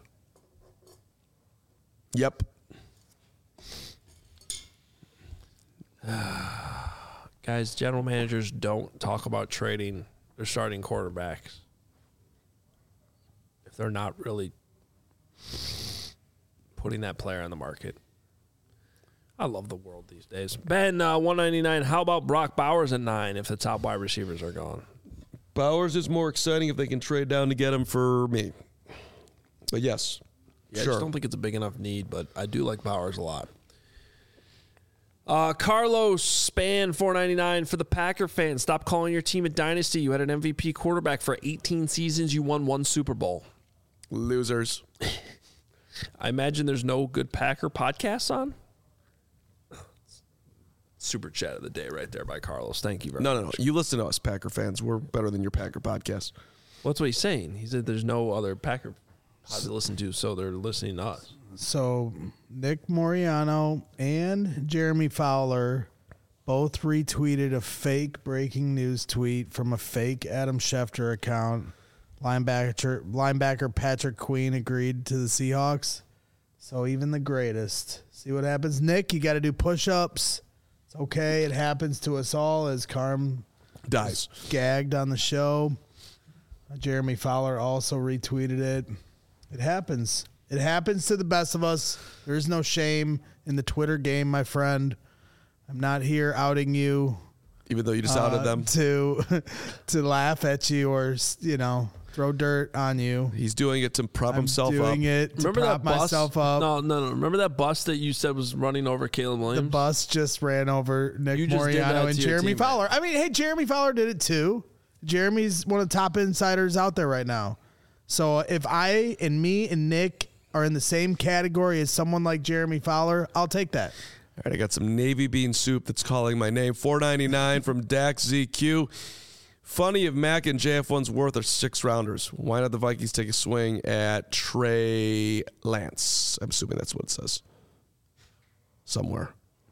Yep. Guys, general managers don't talk about trading their starting quarterbacks if they're not really putting that player on the market. I love the world these days. Ben, uh, one ninety-nine, how about Brock Bowers at nine if the top wide receivers are gone? Bowers is more exciting if they can trade down to get him for me. But yes, yeah, sure. I just don't think it's a big enough need, but I do like Bowers a lot. Uh, Carlos Span four ninety-nine for the Packer fans. Stop calling your team a dynasty. You had an M V P quarterback for eighteen seasons. You won one Super Bowl. Losers. I imagine there's no good Packer podcasts on. Super chat of the day right there by Carlos. Thank you very No, much. no, no. You listen to us, Packer fans. We're better than your Packer podcast. Well, that's what he's saying. He said there's no other Packer pod to listen to, so they're listening to us. So Nick Moriano and Jeremy Fowler both retweeted a fake breaking news tweet from a fake Adam Schefter account. Linebacker linebacker Patrick Queen agreed to the Seahawks. So even the greatest. See what happens, Nick? You got to do push-ups. It's okay. It happens to us all as Carm Dies. gagged on the show. Jeremy Fowler also retweeted it. It happens. It happens to the best of us. There is no shame in the Twitter game, my friend. I'm not here outing you. Even though you just outed uh, them. To, to laugh at you or, you know, throw dirt on you. He's doing it to prop I'm himself doing up. it to Remember prop that bus? myself up. No, no, no. Remember that bus that you said was running over Caleb Williams? The bus just ran over Nick You just did that Moriano to and your Jeremy teammate. Fowler. I mean, hey, Jeremy Fowler did it too. Jeremy's one of the top insiders out there right now. So if I and me and Nick are in the same category as someone like Jeremy Fowler, I'll take that. All right, I got some navy bean soup that's calling my name. four ninety-nine from Dax Z Q. Funny if Mac and J F one's worth are six rounders. Why not the Vikings take a swing at Trey Lance? I'm assuming that's what it says. Somewhere.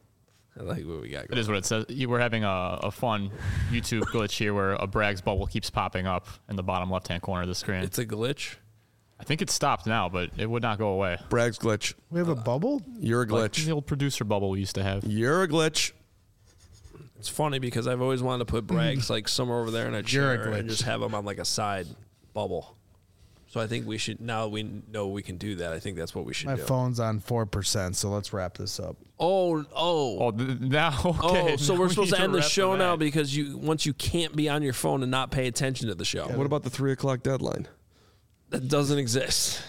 I like what we got It going. is what it says. You- We're having a, a fun YouTube glitch here where a Bragg's bubble keeps popping up in the bottom left-hand corner of the screen. It's a glitch. I think it's stopped now, but it would not go away. Bragg's glitch. We have a bubble? You're a Like glitch. the old producer bubble we used to have. You're a glitch. It's funny because I've always wanted to put Braggs like somewhere over there in a You're a chair and glitch. just have him on like a side bubble. So I think we should, now we know we can do that. I think that's what we should My do. phone's on four percent, so let's wrap this up. Oh, oh. Oh, th- now, okay. Oh, so now we're we supposed need to end the wrap show it now back. because you once you can't be on your phone and not pay attention to the show. What about the three o'clock deadline? That doesn't exist.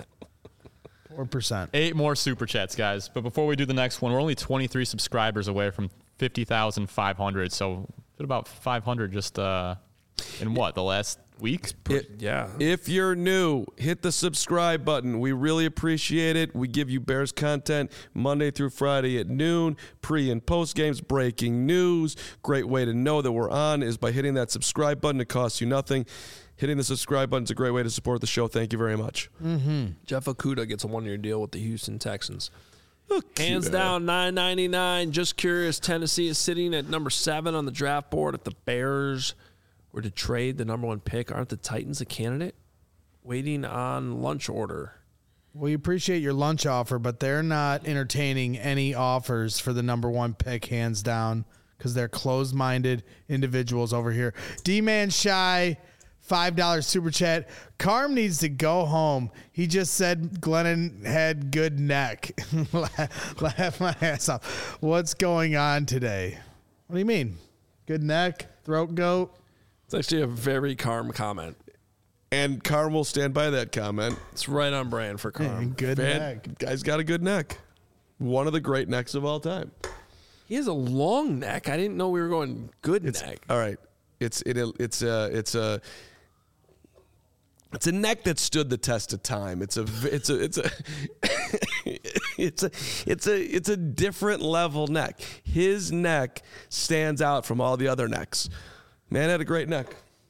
four percent. Eight more super chats, guys. But before we do the next one, we're only twenty-three subscribers away from fifty thousand five hundred. So about five hundred just uh, in what, the last week? It- Yeah. If you're new, hit the subscribe button. We really appreciate it. We give you Bears content Monday through Friday at noon, pre and post games, breaking news. Great way to know that we're on is by hitting that subscribe button. It costs you nothing. Hitting the subscribe button is a great way to support the show. Thank you very much. Mm-hmm. Jeff Okudah gets a one-year deal with the Houston Texans. Okuda. Hands down, nine ninety-nine. Just curious, Tennessee is sitting at number seven on the draft board. If the Bears were to trade the number one pick, aren't the Titans a candidate? Waiting on lunch order. We appreciate your lunch offer, but they're not entertaining any offers for the number one pick, hands down, because they're closed-minded individuals over here. D-Man Shy, five dollars super chat. Carm needs to go home. He just said Glennon had good neck. laugh, laugh my ass off. What's going on today? What do you mean? Good neck? Throat goat? It's actually a very Carm comment. And Carm will stand by that comment. It's right on brand for Carm. Good Man, neck. guy's got a good neck. One of the great necks of all time. He has a long neck. I didn't know we were going good It's neck. all right. It's it it's a it's a it's a neck that stood the test of time. It's a it's a it's a it's a it's a it's a different level neck. His neck stands out from all the other necks. Man had a great neck.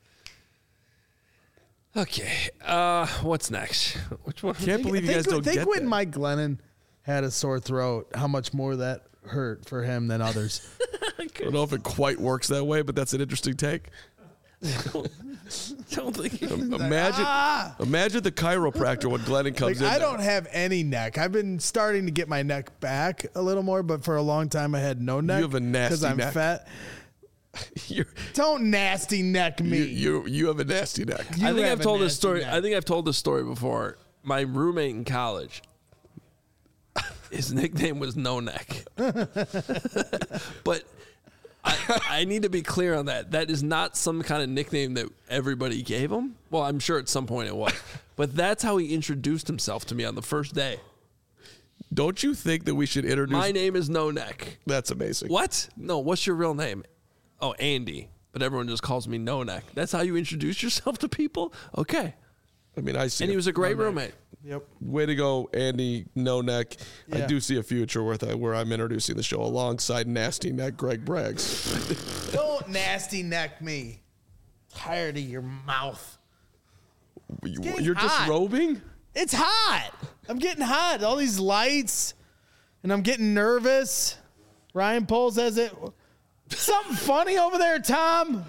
Okay. Uh, what's next? Which one? Can't believe you think, guys don't think get when that. Mike Glennon had a sore throat, how much more that hurt for him than others. I don't know if it quite works that way, but that's an interesting take. Don't think Imagine, Ah! imagine the chiropractor when Glennon comes Like, in. I there. don't have any neck. I've been starting to get my neck back a little more, but for a long time I had no neck. have a nasty because I'm neck. fat. You're, Don't nasty neck me. you, you you have a nasty neck. You I think have I've a told this nasty story. neck. I think I've told this story before. My roommate in college, his nickname was No Neck. But I, I need to be clear on that. That is not some kind of nickname that everybody gave him. Well, I'm sure at some point it was. But that's how he introduced himself to me on the first day. Don't you think that we should introduce? My name is No Neck. That's amazing. What? No, what's your real name? Oh, Andy. But everyone just calls me No Neck. That's how you introduce yourself to people? Okay. I mean, I see. And he it. was a great roommate. Yep. Way to go, Andy. No neck. I Yeah. do see a future where I, where I'm introducing the show alongside nasty neck Greg Braggs. Don't nasty neck me. Tired of your mouth. You, getting you're hot. disrobing? It's hot. I'm getting hot. All these lights, and I'm getting nervous. Ryan Poles has it. Something funny over there, Tom.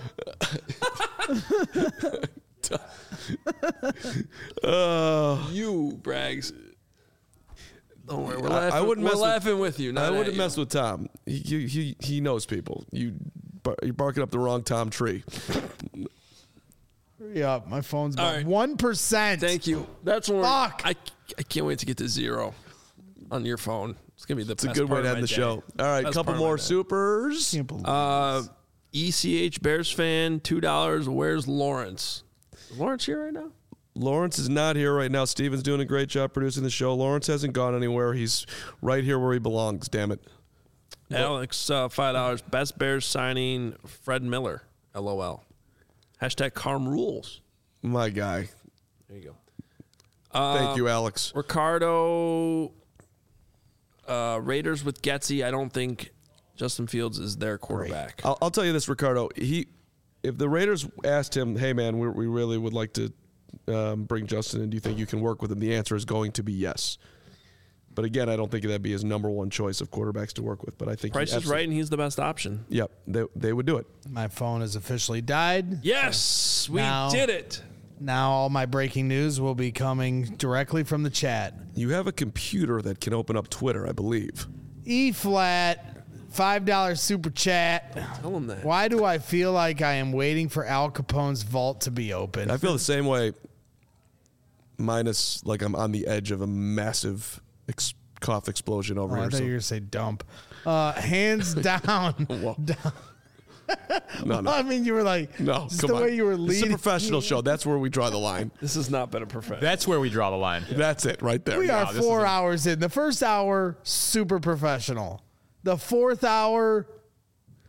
Uh, You, Braggs. Don't worry, we're I- I laughing, wouldn't we're mess with- laughing with, you. I Not wouldn't at mess you. with Tom. He, he he he knows people. You bar- you're barking up the wrong Tom tree. Hurry up. My phone's All about right. one percent. Thank you. That's when we're- Fuck. I, I can't wait to get to zero on your phone. It's gonna be the It's a best good way part to of end my the day. show. All right, Best couple part of my more day. supers. Can't believe Uh, E C H Bears fan, two dollars. Where's Lawrence? Is Lawrence here right now? Lawrence is not here right now. Steven's doing a great job producing the show. Lawrence hasn't gone anywhere. He's right here where he belongs. Damn it. Alex, uh, five dollars. Best Bears signing, Fred Miller. LOL. Hashtag Carm rules. My guy. There you go. Thank you, Alex. Ricardo, uh, Raiders with Getsy. I don't think Justin Fields is their quarterback. I'll, I'll tell you this, Ricardo. He, if the Raiders asked him, "Hey, man, we, we really would like to um, bring Justin in. Do you think you can work with him?" The answer is going to be yes. But again, I don't think that'd be his number one choice of quarterbacks to work with. But I think he Price is absolutely- right, and he's the best option. Yep, they they would do it. My phone has officially died. Yes, we Now- did it. Now all my breaking news will be coming directly from the chat. You have a computer that can open up Twitter, I believe. E flat, five dollars super chat. Tell him that. Why do I feel like I am waiting for Al Capone's vault to be open? I feel the same way. Minus, like I'm on the edge of a massive ex- cough explosion over Oh, I here. thought So. you were going to say dump. Uh, hands down. Whoa. down. No, no. I mean, you were like, No, just come the on. way you were It's leading. a professional show. That's where we draw the line. This has not been a professional. That's where we draw the line. That's it, right there. We are this four is a- hours in. The first hour, super professional. The fourth hour,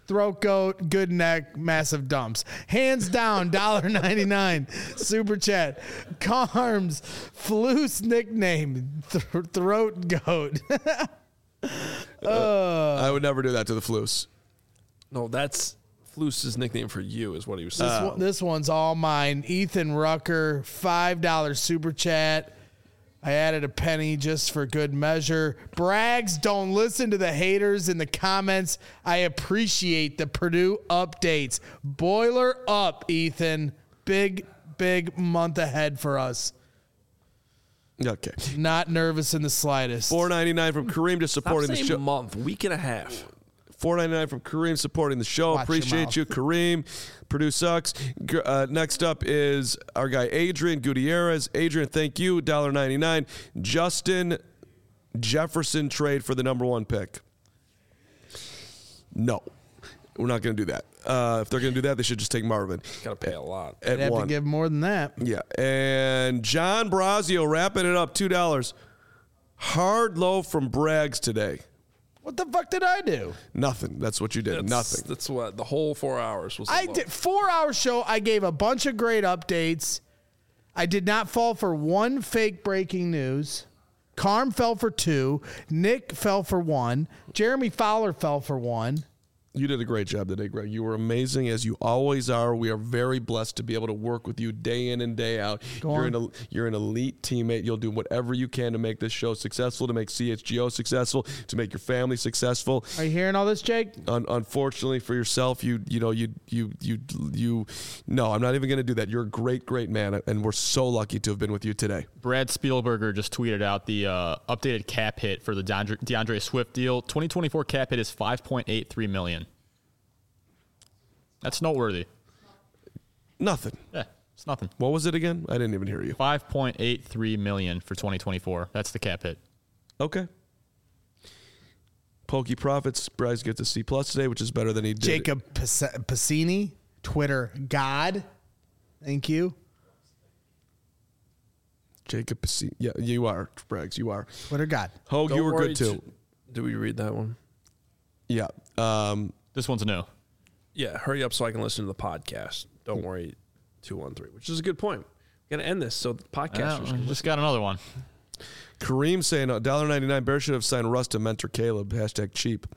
throat goat, good neck, massive dumps. Hands down, one dollar ninety-nine. Super chat. Carms, Floose nickname, th- throat goat. uh, I would never do that to the Floose. No, that's Floose's nickname for you, is what he was saying. This, one, this one's all mine. Ethan Rucker, five dollars super chat. I added a penny just for good measure. Brags, don't listen to the haters in the comments. I appreciate the Purdue updates. Boiler up, Ethan. Big, big month ahead for us. Okay. Not nervous in the slightest. four ninety-nine from Kareem, just supporting Stop the saying show. month, week and a half. four ninety-nine from Kareem, supporting the show. Watch your Appreciate mouth. you, Kareem. Purdue sucks. G- Uh, next up is our guy Adrian Gutierrez. Adrian, thank you. one dollar ninety-nine. Justin Jefferson trade for the number one pick. No, we're not going to do that. Uh, if they're going to do that, they should just take Marvin. Got to pay a lot. I'd At have one. to give more than that. Yeah. And John Brazio wrapping it up, two dollars. Hard low from Braggs today. What the fuck did I do? Nothing. That's what you did. That's, Nothing. That's what the whole four hours was. I low. did four hour show. I gave a bunch of great updates. I did not fall for one fake breaking news. Carm fell for two. Nick fell for one. Jeremy Fowler fell for one. You did a great job today, Greg. You were amazing, as you always are. We are very blessed to be able to work with you day in and day out. Go you're on. an you're an elite teammate. You'll do whatever you can to make this show successful, to make C H G O successful, to make your family successful. Are you hearing all this, Jake? Un- unfortunately for yourself, you you know you you you you. No, I'm not even going to do that. You're a great, great man, and we're so lucky to have been with you today. Brad Spielberger just tweeted out the uh, updated cap hit for the DeAndre, DeAndre Swift deal. twenty twenty-four cap hit is five point eight three million dollars. That's noteworthy. Nothing. Yeah, it's nothing. What was it again? I didn't even hear you. five point eight three million dollars for twenty twenty-four. That's the cap hit. Okay. Pokey Profits, Bryce gets a C plus today, which is better than he did. Jacob Pas- Passini, Twitter God. Thank you. Jacob, Passi- yeah, you are, Braggs, you are. Twitter God. Hogue, Don't you were worry good too. t- Did we read that one? Yeah. Um, This one's new. Yeah, hurry up so I can listen to the podcast. Don't worry, two one three, which is a good point. We're gonna end this so the podcasters Yeah, can just got another one. Kareem saying one dollar ninety-nine. Bear should have signed Russ to mentor Caleb. Hashtag cheap.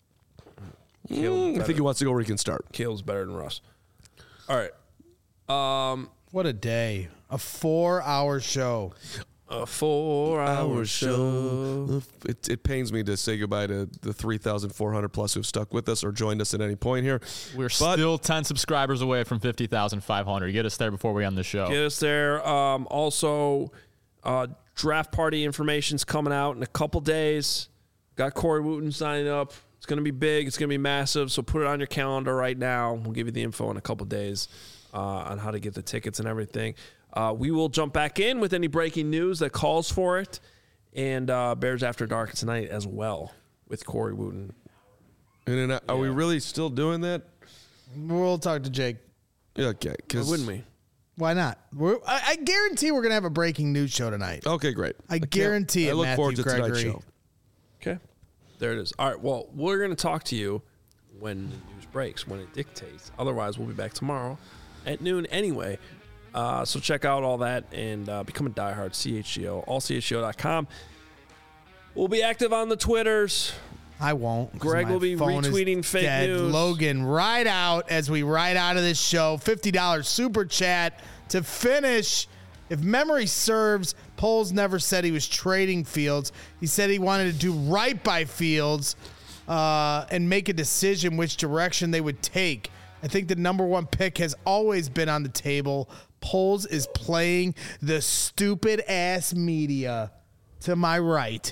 Mm, I think he wants to go where he can start. Caleb's better than Russ. All right. Um, What a day. A four hour show. a four-hour show. It, it pains me to say goodbye to the three thousand four hundred plus who've stuck with us or joined us at any point here. We're But- still ten subscribers away from fifty thousand five hundred. Get us there before we end the show. Get us there. Um, also, uh, draft party information's coming out in a couple days. Got Corey Wooten signing up. It's going to be big. It's going to be massive. So put it on your calendar right now. We'll give you the info in a couple days uh, on how to get the tickets and everything. Uh, we will jump back in with any breaking news that calls for it. And uh, Bears After Dark tonight as well with Corey Wooten. And then, are we really still doing that? We'll talk to Jake. Okay. Why Cause, wouldn't we? Why not? We're, I, I guarantee we're going to have a breaking news show tonight. Okay, great. I can't- guarantee it, I look Matthew forward to tonight's Gregory. show. Okay. There it is. All right. Well, we're going to talk to you when the news breaks, when it dictates. Otherwise, we'll be back tomorrow at noon anyway. Uh, so check out all that and uh, become a diehard C H G O, all C H G O dot com. We'll be active on the Twitters. I won't. 'cause Greg my will be phone is retweeting fake dead. news. Logan, ride out as we ride out of this show. fifty dollars super chat to finish. If memory serves, Poles never said he was trading Fields. He said he wanted to do right by Fields uh, and make a decision which direction they would take. I think the number one pick has always been on the table. Poles is playing the stupid ass media to my right.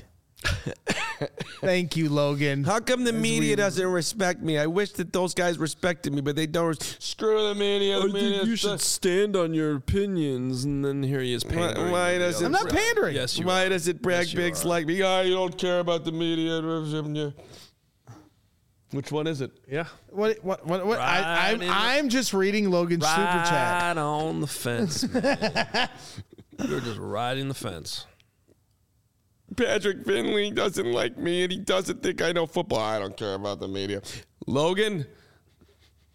Thank you, Logan. How come the As media we- doesn't respect me? I wish that those guys respected me, but they don't. Screw the media. The media sucks. stand on your opinions, and then here he is pandering. why to the does other it- I'm not side. pandering. Yes, you Why are. does it brag Yes, you bigs are. like me? Oh, you don't care about the media. Which one is it? Yeah. What? What? What? what Right I, I'm in the- I'm just reading Logan's super chat. Right on the fence, man. You're just riding the fence. Patrick Finley doesn't like me, and he doesn't think I know football. I don't care about the media. Logan,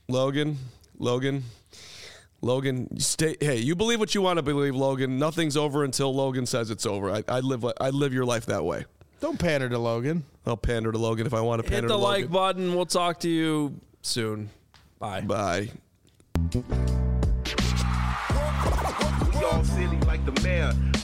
Logan, Logan, Logan, you stay. Hey, you believe what you want to believe, Logan. Nothing's over until Logan says it's over. I, I live. I live your life that way. Don't pander to Logan. I'll pander to Logan if I want to pander Hit to the Logan. like button. We'll talk to you soon. Bye. Bye. We all silly like the mayor.